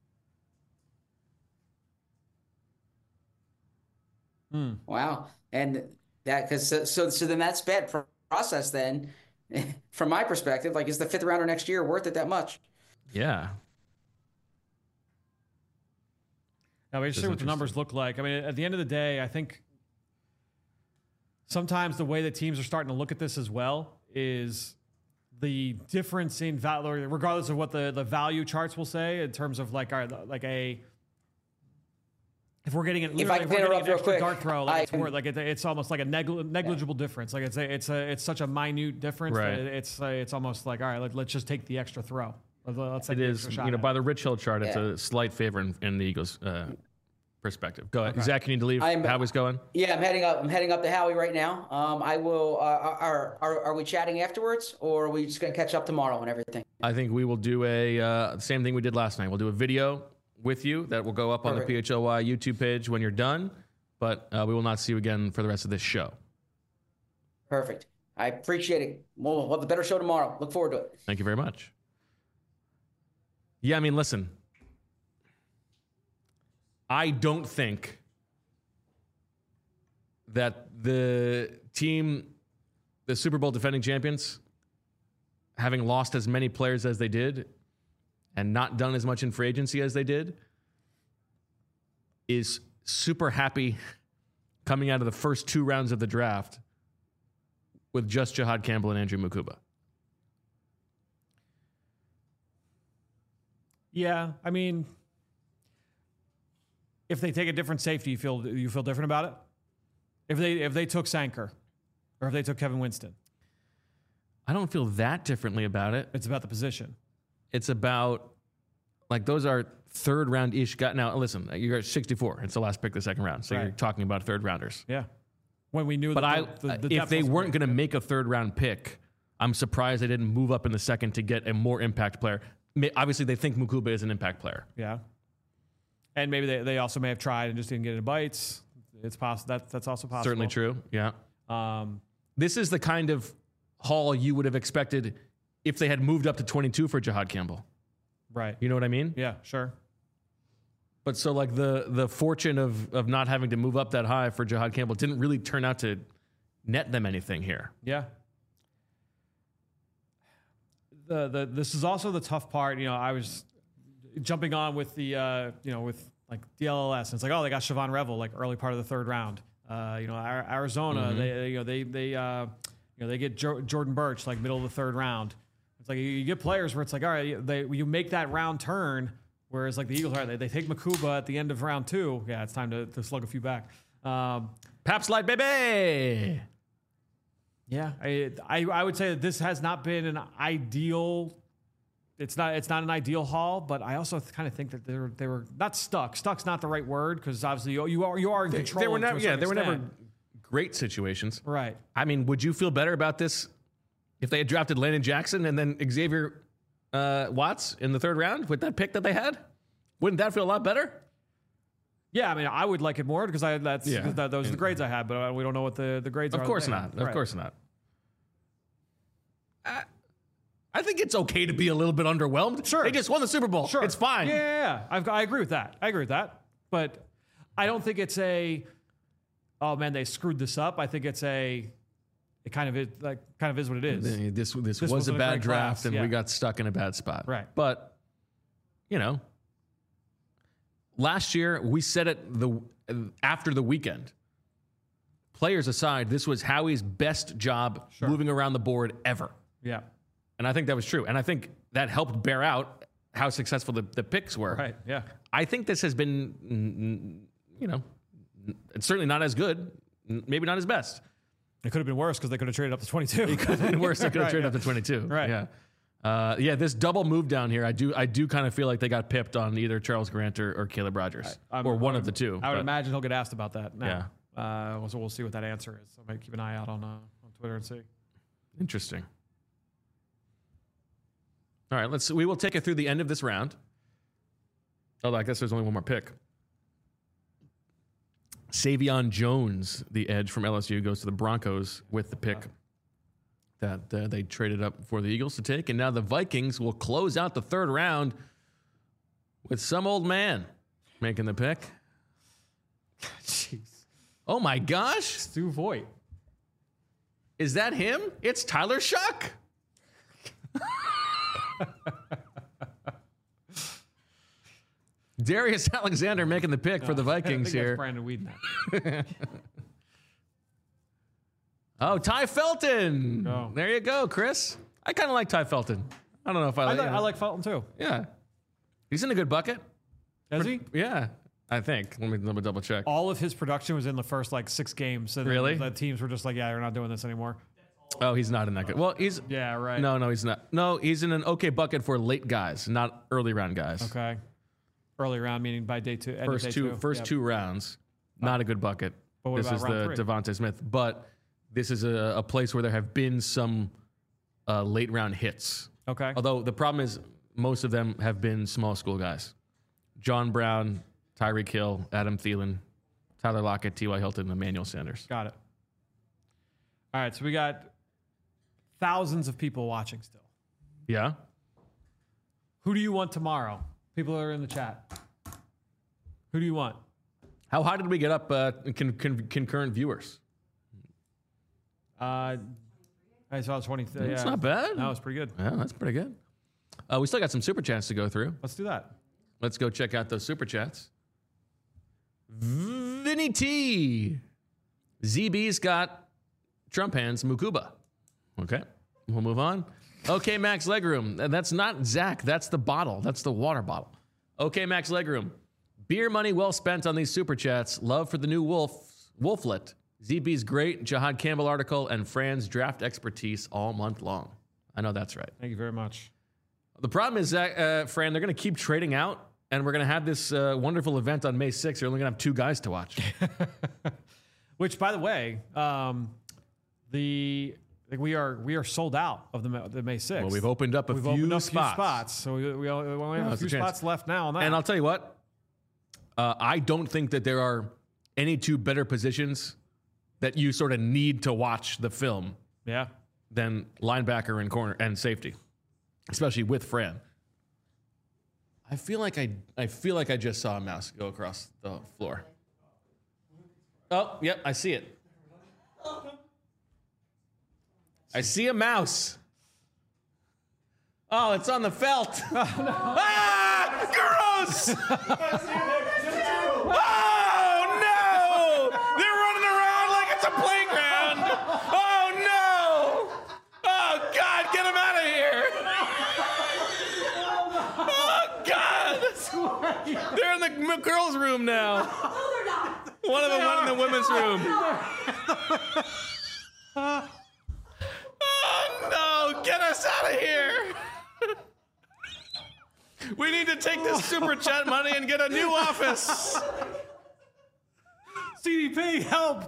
Wow, and that because so, so so then that's bad pro- process. Then, from my perspective, like is the fifth rounder next year worth it that much? Yeah. Now, we just see what the interesting. numbers look like. I mean, at the end of the day, I think sometimes the way that teams are starting to look at this as well is the difference in value, regardless of what the, the value charts will say in terms of like our like a if we're getting an, If I can if we're getting interrupt an real extra quick, dart throw, like I it's can- more like it, it's almost like a negli- negligible difference. Like it's a, it's a it's such a minute difference Right. that it's uh, it's almost like all right, let, let's just take the extra throw. Let- Let's take It the is, extra shot you know, at by it. the Rich Hill chart, it's Yeah. a slight favor in, in the Eagles' uh, perspective. Go ahead, Okay. Zach. You need to leave. I'm- Howie's going. Yeah, I'm heading up. I'm heading up to Howie right now. Um, I will. Uh, are, are are we chatting afterwards, or are we just gonna catch up tomorrow and everything? I think we will do a uh, same thing we did last night. We'll do a video with you that will go up on the Perfect. P H L Y YouTube page when you're done. But uh, we will not see you again for the rest of this show. Perfect. I appreciate it. We'll we'll have a better show tomorrow. Look forward to it. Thank you very much. Yeah, I mean, listen. I don't think that the team, the Super Bowl defending champions, having lost as many players as they did and not done as much in free agency as they did, is super happy coming out of the first two rounds of the draft with just Jahad Campbell and Andrew Mukuba. Yeah, I mean, if they take a different safety, you feel you feel different about it. If they if they took Sanker, or if they took Kevin Winston, I don't feel that differently about it. it's about the position. It's about, like, those are third round ish guys. Now, listen, you're at sixty-four. It's the last pick of the second round. So you're Right. talking about third rounders. Yeah, when we knew. But I, that the, the, the if depth they wasn't weren't great. going to make a third round pick, I'm surprised they didn't move up in the second to get a more impact player. May- Obviously, they think Mukuba is an impact player. yeah, and maybe they, they also may have tried and just didn't get any bites. It's possible that that's also possible. Certainly true. Yeah. Um, This is the kind of haul you would have expected if they had moved up to twenty-two for Jahad Campbell. right. You know what I mean? Yeah, sure. But so, like, the the fortune of of not having to move up that high for Jahad Campbell didn't really turn out to net them anything here. Yeah. The the this is also the tough part. You know, I was jumping on with the uh, you know with like D L L S. And it's like, oh, they got Siobhan Revel like early part of the third round. Uh, you know, Ar- Arizona, they, they you know they they uh, you know they get jo- Jordan Birch like middle of the third round. It's like you, you get players where it's like, all right, they you make that round turn. Whereas like the Eagles, all right, they, they take Mukuba at the end of round two. Yeah, it's time to, to slug a few back. Um, Paps Light, baby. Yeah, I, I I would say that this has not been an ideal. It's not it's not an ideal haul, but I also kind of think that they were they were not stuck. Stuck's not the right word because obviously you, you are you are in control. They were to never, a yeah, certain they were never extent. great situations. Right. I mean, would you feel better about this if they had drafted Landon Jackson and then Xavier uh, Watts in the third round with that pick that they had? Wouldn't that feel a lot better? Yeah, I mean, I would like it more because I that's Yeah. that, those are the grades I had, but uh, we don't know what the, the grades are. Of course there. not. Of Right. course not. I, I think it's okay to be a little bit underwhelmed. Sure. They just won the Super Bowl. Sure, It's fine. Yeah, yeah, yeah. I've, I agree with that. I agree with that, but I don't think it's a. oh man, they screwed this up. I think it's a, it kind of is like kind of is what it is. This this, This was a wasn't a bad great draft, class, and yeah. we got stuck in a bad spot. Right. But you know, last year we said it the after the weekend. Players aside, this was Howie's best job Sure. moving around the board ever. Yeah. And I think that was true. And I think that helped bear out how successful the, the picks were. Right. Yeah. I think this has been, mm, you know, it's certainly not as good, maybe not as best. It could have been worse because they could have traded up to twenty-two. It could have been worse. They could have Right, traded yeah. up to twenty-two. Right. Yeah. Uh, yeah, this double move down here, I do I do kind of feel like they got pipped on either Charles Grant or, or Caleb Rogers, I'm- or one I'm- of the two. I would but- imagine he'll get asked about that. Now. Yeah. Uh, so we'll see what that answer is. So I might keep an eye out on uh, on Twitter and see. Interesting. All right, let's. We will take it through the end of this round. Oh, I guess there's only one more pick. Savion Jones, the edge from L S U, goes to the Broncos with the pick that uh, they traded up for the Eagles to take, and now the Vikings will close out the third round with some old man making the pick. Jeez. Oh my gosh, Stu Voigt. is that him? It's Tyler Shuck. Darius Alexander making the pick for the I Vikings think that's here. Brandon Weeden. Oh, Ty Felton. Go. There you go, Chris. I kind of like Ty Felton. I don't know if I I, like like, I like Felton too. Yeah. He's in a good bucket. Is he? Yeah, I think. Let me, let me double check. All of his production was in the first like six games. And then Really? The teams were just like, yeah, we're not doing this anymore. Oh, he's not in that good. Well, he's. Yeah, right. No, no, he's not. No, he's in an okay bucket for late guys, not early round guys. Okay. Early round, meaning by day two. end of First day two, two. first Yep. two rounds, not a good bucket. But what this about is round the three? Devontae Smith, but this is a, a place where there have been some uh, late round hits. Okay. Although the problem is most of them have been small school guys. John Brown, Tyreek Hill, Adam Thielen, Tyler Lockett, T Y. Hilton, and Emmanuel Sanders. Got it. All right, so we got thousands of people watching still. Yeah. Who do you want tomorrow? People that are in the chat. Who do you want? How high did we get up uh, in con- con- concurrent viewers? Uh, I saw twenty. It's yeah. not bad. That was pretty good. Yeah, that's pretty good. Uh, we still got some super chats to go through. Let's do that. Let's go check out those super chats. Vinny T. Z B's got Trump hands Mukuba. Okay, we'll move on. Okay, Max Legroom. And that's not Zach. That's the bottle. That's the water bottle. Okay, Max Legroom. Beer money well spent on these super chats. Love for the new Wolf, Wolflet. Z B's great Jahad Campbell article and Fran's draft expertise all month long. I know that's right. Thank you very much. The problem is, Zach, uh, Fran, they're going to keep trading out, and we're going to have this uh, wonderful event on May sixth. You're only going to have two guys to watch. Which, by the way, um, the like we are we are sold out of the, the May sixth. Well, we've opened up a We've few opened up spots. a few spots, so we, we only we only have No, a it's a few chance. spots left now on that. And I'll tell you what, uh, I don't think that there are any two better positions that you sort of need to watch the film yeah, than linebacker and corner and safety, especially with Fran. I feel like I I feel like I just saw a mouse go across the floor. Oh, yep, I see it. I see a mouse. Oh, it's on the felt. Ah, gross! Oh no! They're running around like it's a playground. Oh no! Oh God, get them out of here! Oh God! They're in the m- girls' room now. One of them went in the women's room. Oh no! Get us out of here! We need to take this super chat money and get a new office. C D P, help!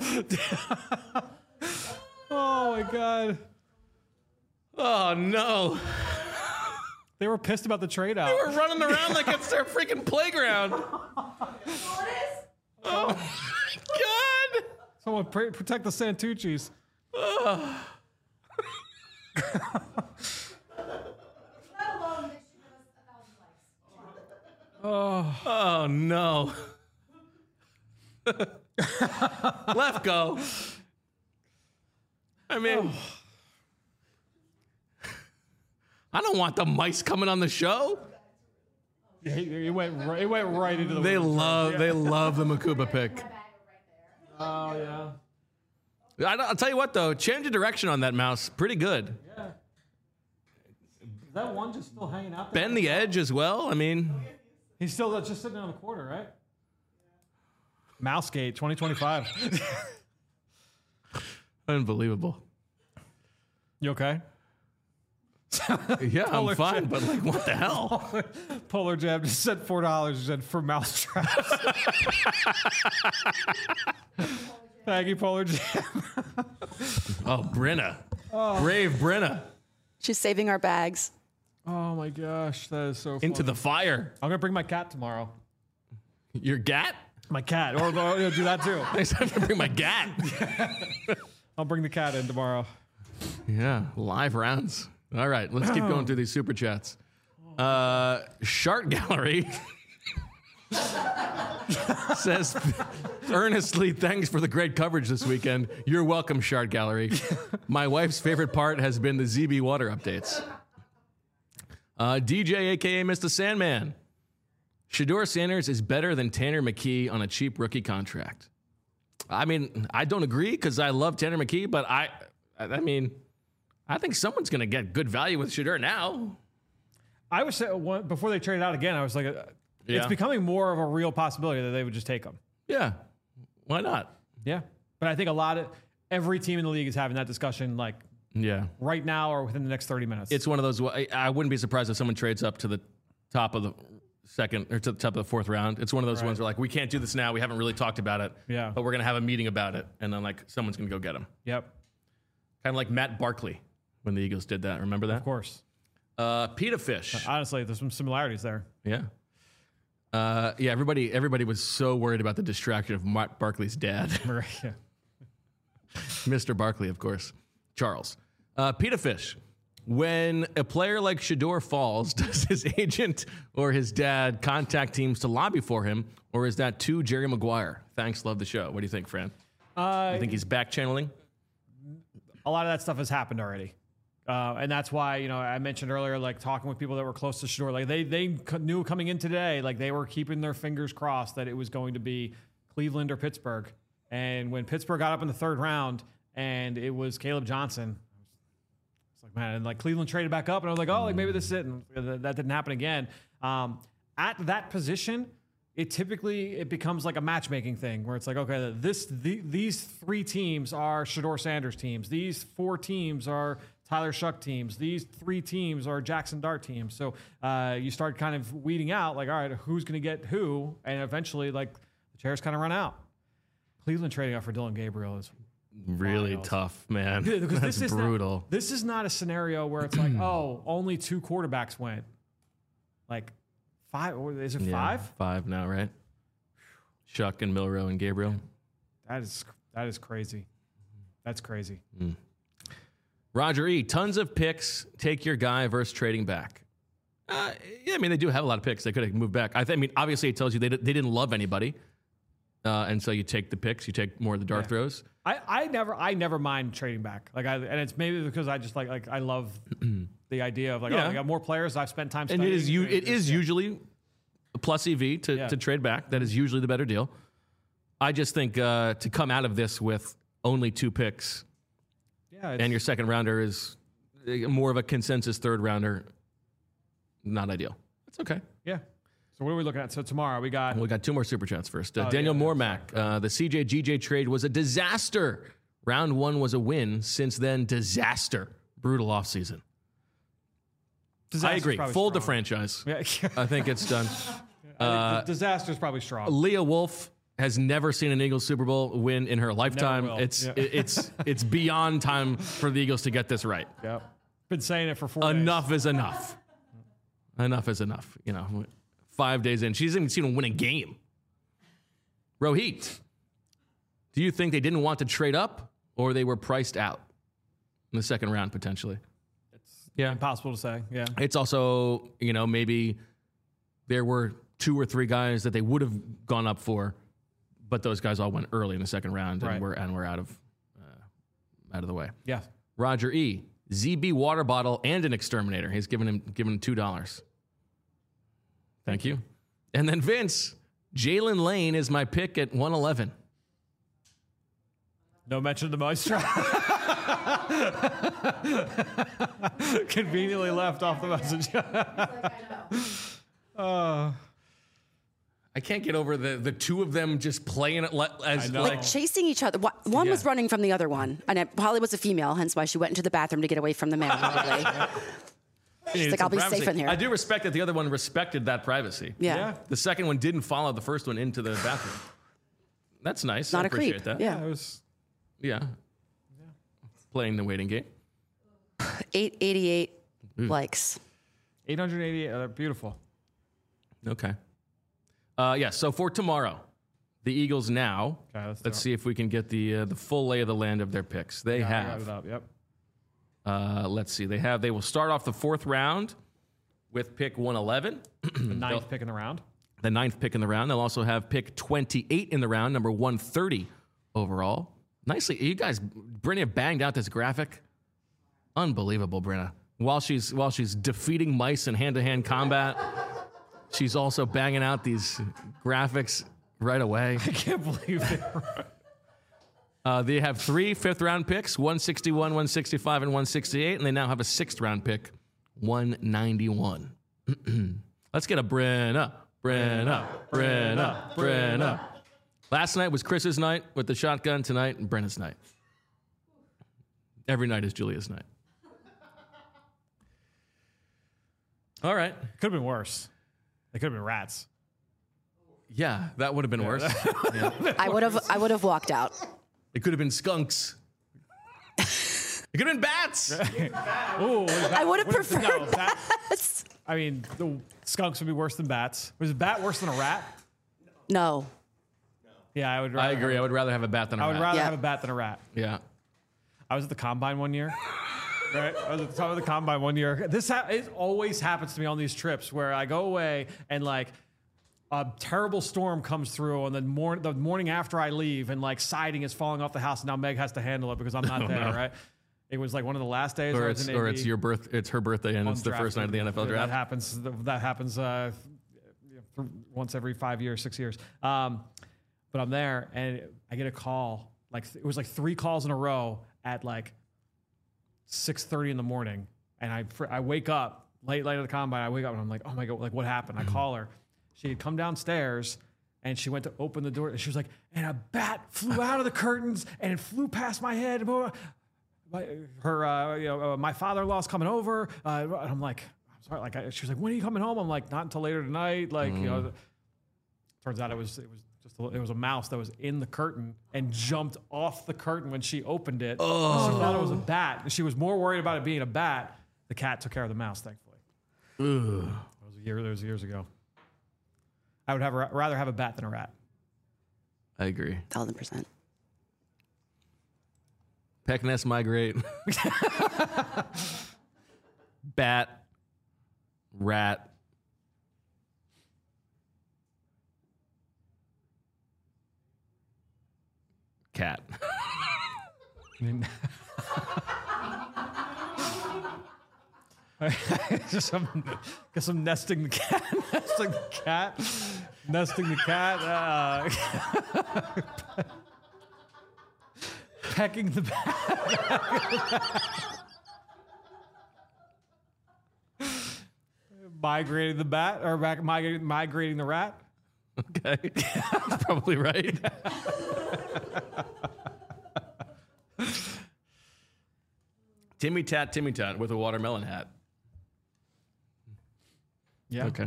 Oh my God, Oh no! they were pissed about the trade out. We're running around like it's their freaking playground. Oh my God! Someone pray, protect the Santucci's. Oh no! Lefko. I mean, I don't want the mice coming on the show. Yeah, he, he went right, he went right into the. They love, yeah. they love the Makuba pick. Oh yeah. I, I'll tell you what though, change of direction on that mouse, pretty good. Yeah. Is that one just still hanging out there? Bend the edge as well. I mean, he's still just sitting on the corner, right? Mousegate twenty twenty-five. Unbelievable. You okay? Yeah, I'm fine, but like, what the hell? Polar, Polar Jam just said four dollars. He said for mouse traps. Thank you, Polar Jam. Oh, Brenna. Oh. Brave Brenna. She's saving our bags. Oh my gosh, that is so funny. Into the fire. I'm gonna bring my cat tomorrow. Your gat? My cat. Or I'll do that too. I have to bring my gat. I'll bring the cat in tomorrow. Yeah, live rounds. All right, let's keep going through these super chats. Uh, Shart Gallery says earnestly, thanks for the great coverage this weekend. You're welcome, Shart Gallery. My wife's favorite part has been the Z B water updates. Uh, D J, a k a. Mister Sandman. Shedeur Sanders is better than Tanner McKee on a cheap rookie contract. I mean, I don't agree because I love Tanner McKee, but I, I mean... I think someone's going to get good value with Shedeur now. I was saying, before they traded out again, I was like, uh, yeah. It's becoming more of a real possibility that they would just take him. Yeah. Why not? Yeah. But I think a lot of, every team in the league is having that discussion like yeah, right now or within the next thirty minutes. It's one of those, I, I wouldn't be surprised if someone trades up to the top of the second or to the top of the fourth round. It's one of those right. ones where like, we can't do this now. We haven't really talked about it. Yeah. But we're going to have a meeting about it. And then like someone's going to go get him. Yep. Kind of like Matt Barkley. When the Eagles did that. Remember that? Of course. Uh, Pita Fish. Honestly, there's some similarities there. Yeah. Uh, yeah, everybody everybody was so worried about the distraction of Matt Barkley's dad. Yeah. Mister Barkley, of course. Charles. Uh, Pita Fish. When a player like Shedeur falls, does his agent or his dad contact teams to lobby for him, or is that too Jerry Maguire? Thanks, love the show. What do you think, Fran? Uh, you think he's back channeling? A lot of that stuff has happened already. Uh, and that's why, you know, I mentioned earlier, like talking with people that were close to Shedeur, like they they knew coming in today, like they were keeping their fingers crossed that it was going to be Cleveland or Pittsburgh. And when Pittsburgh got up in the third round and it was Caleb Johnson, it's like, man, and like Cleveland traded back up and I was like, oh, like maybe this is it. And that didn't happen again. Um, at that position, it typically, it becomes like a matchmaking thing where it's like, okay, this the, these three teams are Shedeur Sanders teams. These four teams are Tyler Shuck teams. These three teams are Jackson Dart teams. So uh, you start kind of weeding out, like, all right, who's going to get who? And eventually, like, the chairs kind of run out. Cleveland trading out for Dylan Gabriel is really wild. Tough, man. Because That's this is brutal. Not, this is not a scenario where it's like, oh, only two quarterbacks went. Like, five, or is it yeah, five? Five now, right? Shuck and Milroe and Gabriel. That is that is crazy. That's crazy. Mm. Roger E. Tons of picks. Take your guy versus trading back. Uh, yeah, I mean, they do have a lot of picks. They could have moved back. I, th- I mean, obviously, it tells you they, d- they didn't love anybody. Uh, and so you take the picks. You take more of the dart yeah. throws. I, I never I never mind trading back. Like I, and it's maybe because I just like like I love the idea of like, yeah. oh, I got more players. I've spent time studying. And it is, you, it is yeah. usually a plus E V to, yeah. to trade back. That is usually the better deal. I just think uh, to come out of this with only two picks yeah, and your second rounder is more of a consensus third rounder, not ideal. That's okay. Yeah. So what are we looking at? So tomorrow we got... We got two more Super Chats first. Uh, oh, Daniel yeah, Mormack, uh, the C J G J trade was a disaster. Round one was a win. Since then, disaster. Brutal offseason. I agree. Fold the franchise. Yeah. I think it's done. Uh, disaster is probably strong. Leah Wolf has never seen an Eagles Super Bowl win in her lifetime. It's yeah. it, it's it's beyond time for the Eagles to get this right. Yep. Been saying it for four Enough days. is enough. Enough is enough. You know, five days in, she hasn't even seen them win a game. Rohit, do you think they didn't want to trade up or they were priced out in the second round potentially? It's yeah. impossible to say. Yeah. It's also, you know, maybe there were two or three guys that they would have gone up for, but those guys all went early in the second round, and Right. we're and we're out of uh, out of the way. Yeah. Roger E. Z B water bottle and an exterminator. He's given him given him two dollars. Thank you. And then Vince, Jalen Lane is my pick at one eleven. No mention of the Maestro. Conveniently left off the message. uh, I can't get over the the two of them just playing it le- as I know. like Like chasing each other. Wha- One was Yeah. running from the other one, and it probably was a female, hence why she went into the bathroom to get away from the male. Probably. She's It's like, I'll some be privacy. safe in here. I do respect that the other one respected that privacy. Yeah. Yeah. The second one didn't follow the first one into the bathroom. That's nice. Not I a appreciate creep. that. Yeah. it was Yeah. Playing the waiting game. eight eighty-eight likes. eight hundred eighty-eight. Uh, beautiful. Okay. Uh, yeah. So for tomorrow, the Eagles now. Okay, let's let's do it. see if we can get the uh, the full lay of the land of their picks. They Yeah, I got have. it up. Yep. Uh, let's see. They have. They will start off the fourth round with pick one eleven, The ninth pick in the round. the ninth pick in the round. They'll also have pick twenty-eight in the round, number one thirty overall. Nicely, you guys. Brenna banged out this graphic. Unbelievable, Brenna. While she's while she's defeating mice in hand-to-hand combat, she's also banging out these graphics right away. I can't believe they were. Uh, they have three fifth-round picks, one sixty-one, one sixty-five, and one sixty-eight, and they now have a sixth-round pick, one ninety-one. Let's get a Brenna, Brenna, Brenna, Brenna. Last night was Chris's night with the shotgun. Tonight, Brenna's night. Every night is Julia's night. All right. Could have been worse. They could have been rats. Yeah, that would have been worse. Yeah. I would have. I would have walked out. It could have been skunks. It could have been bats. Ooh, I would have preferred no, bat- bats. I mean, the skunks would be worse than bats. Was a bat worse than a rat? No. Yeah, I would. Rather I agree. I Have, would rather have a bat than a I would rat. rather Yeah. have a bat than a rat. Yeah. I was at the combine one year. Right, I was at the top of the combine one year. This ha- it always happens to me on these trips where I go away and like a terrible storm comes through, and then mor- the morning after I leave, and like siding is falling off the house, and now Meg has to handle it because I'm not there. no. Right? It was like one of the last days. Or I was it's in or A B it's your birth. It's her birthday, and on it's the draft first night of the N F L day. draft. That happens. That happens uh, th- once every five years, six years. Um, but I'm there, and I get a call. Like it was like three calls in a row at like six thirty in the morning, and I fr- I wake up late, late at the combine. I wake up and I'm like, oh my god, like what happened? I call her. She had come downstairs and she went to open the door, and she was like, and a bat flew out of the curtains and it flew past my head. My, her, uh, you know, uh, my father-in-law's coming over. Uh, and I'm like, I'm sorry. Like, I, she was like, when are you coming home? I'm like, not until later tonight. Like, you know. Turns out it was it was just a, it was a mouse that was in the curtain and jumped off the curtain when she opened it. Oh. She thought it was a bat. She was more worried about it being a bat. The cat took care of the mouse, thankfully. Ugh. That was a year. That was years ago. I would have a, rather have a bat than a rat. I agree. Thousand percent. Peck nest migrate. Bat. Rat. Cat. I mean, just some, get some nesting the cat, nesting the cat, nesting the cat, uh, pecking the bat, migrating the bat, or back, migrating, migrating the rat. Okay. That's probably right. Timmy Tat, Timmy Tat with a watermelon hat. Yeah. Okay.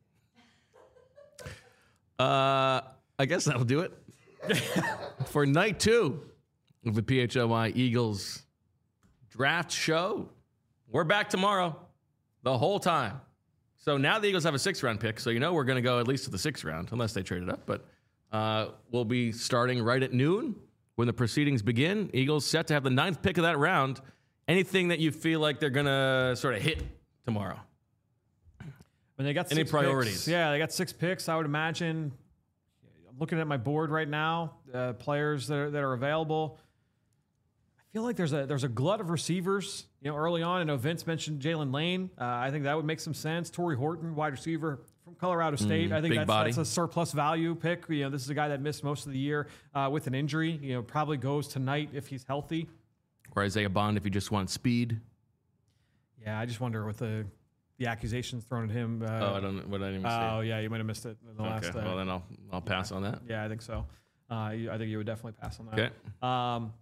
Uh, I guess that'll do it for night two of the P H L Y Eagles draft show. We're back tomorrow the whole time. So now the Eagles have a sixth round pick. So you know we're going to go at least to the sixth round, unless they trade it up. But uh, we'll be starting right at noon when the proceedings begin. Eagles set to have the ninth pick of that round. Anything that you feel like they're going to sort of hit tomorrow? When they got Any six priorities? Picks, yeah, they got six picks. I would imagine I'm looking at my board right now, uh, players that are, that are available. I feel like there's a there's a glut of receivers. You know, early on, I know Vince mentioned Jalen Lane. Uh, I think that would make some sense. Torrey Horton, wide receiver from Colorado State. Mm, I think big that's, body. that's a surplus value pick. You know, this is a guy that missed most of the year uh, with an injury. You know, probably goes tonight if he's healthy. Or Isaiah Bond if you just want speed. Yeah, I just wonder with the the accusations thrown at him. Uh, oh, I don't. What I didn't even Oh, say. yeah, you might have missed it in the Okay. last. Uh, Well, then I'll I'll pass yeah. on that. Yeah, I think so. Uh, you, I think you would definitely pass on that. Okay. Um,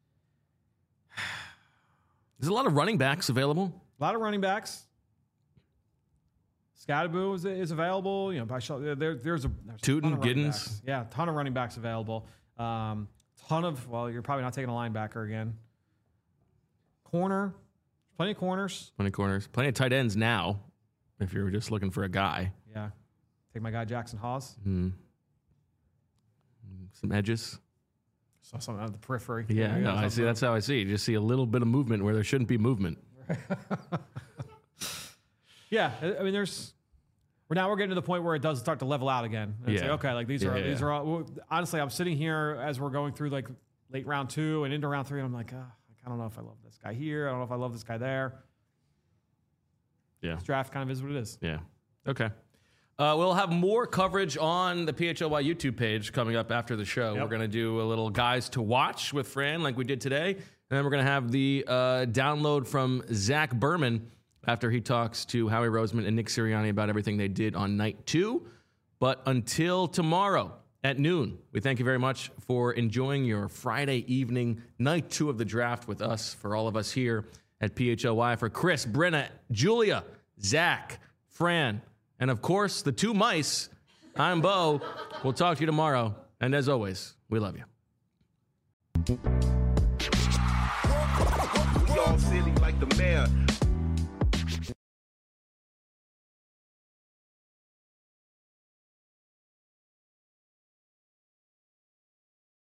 There's a lot of running backs available. a lot of running backs. Scadaboo is, is available. You know, by show, there, there's a there's a Tootin, ton of running Giddens. backs. Yeah, ton of running backs available. Um, ton of. Well, you're probably not taking a linebacker again. Corner, plenty of corners. Plenty of corners. Plenty of tight ends now. If you're just looking for a guy. Yeah, take my guy Jackson Hawes. Mm. Some edges. Saw something out of the periphery. Yeah, no, I see. That's how I see. You just see a little bit of movement where there shouldn't be movement. Yeah, I I mean, there's. We're now we're getting to the point where it does start to level out again. And it's Yeah. like, okay, like these Yeah, are yeah, these yeah. are all. well, Honestly, I'm sitting here as we're going through like late round two and into round three, and I'm like, ah, I don't know if I love this guy here. I don't know if I love this guy there. Yeah. This draft kind of is what it is. Yeah. Okay. Uh, we'll have more coverage on the P H L Y YouTube page coming up after the show. Yep. We're going to do a little guys to watch with Fran like we did today. And then we're going to have the uh, download from Zach Berman after he talks to Howie Roseman and Nick Sirianni about everything they did on night two. But until tomorrow at noon, we thank you very much for enjoying your Friday evening, night two of the draft with us, for all of us here at P H L Y. For Chris, Brenna, Julia, Zach, Fran, and of course, the two mice, I'm Bo. We'll talk to you tomorrow. And as always, we love you. We all silly.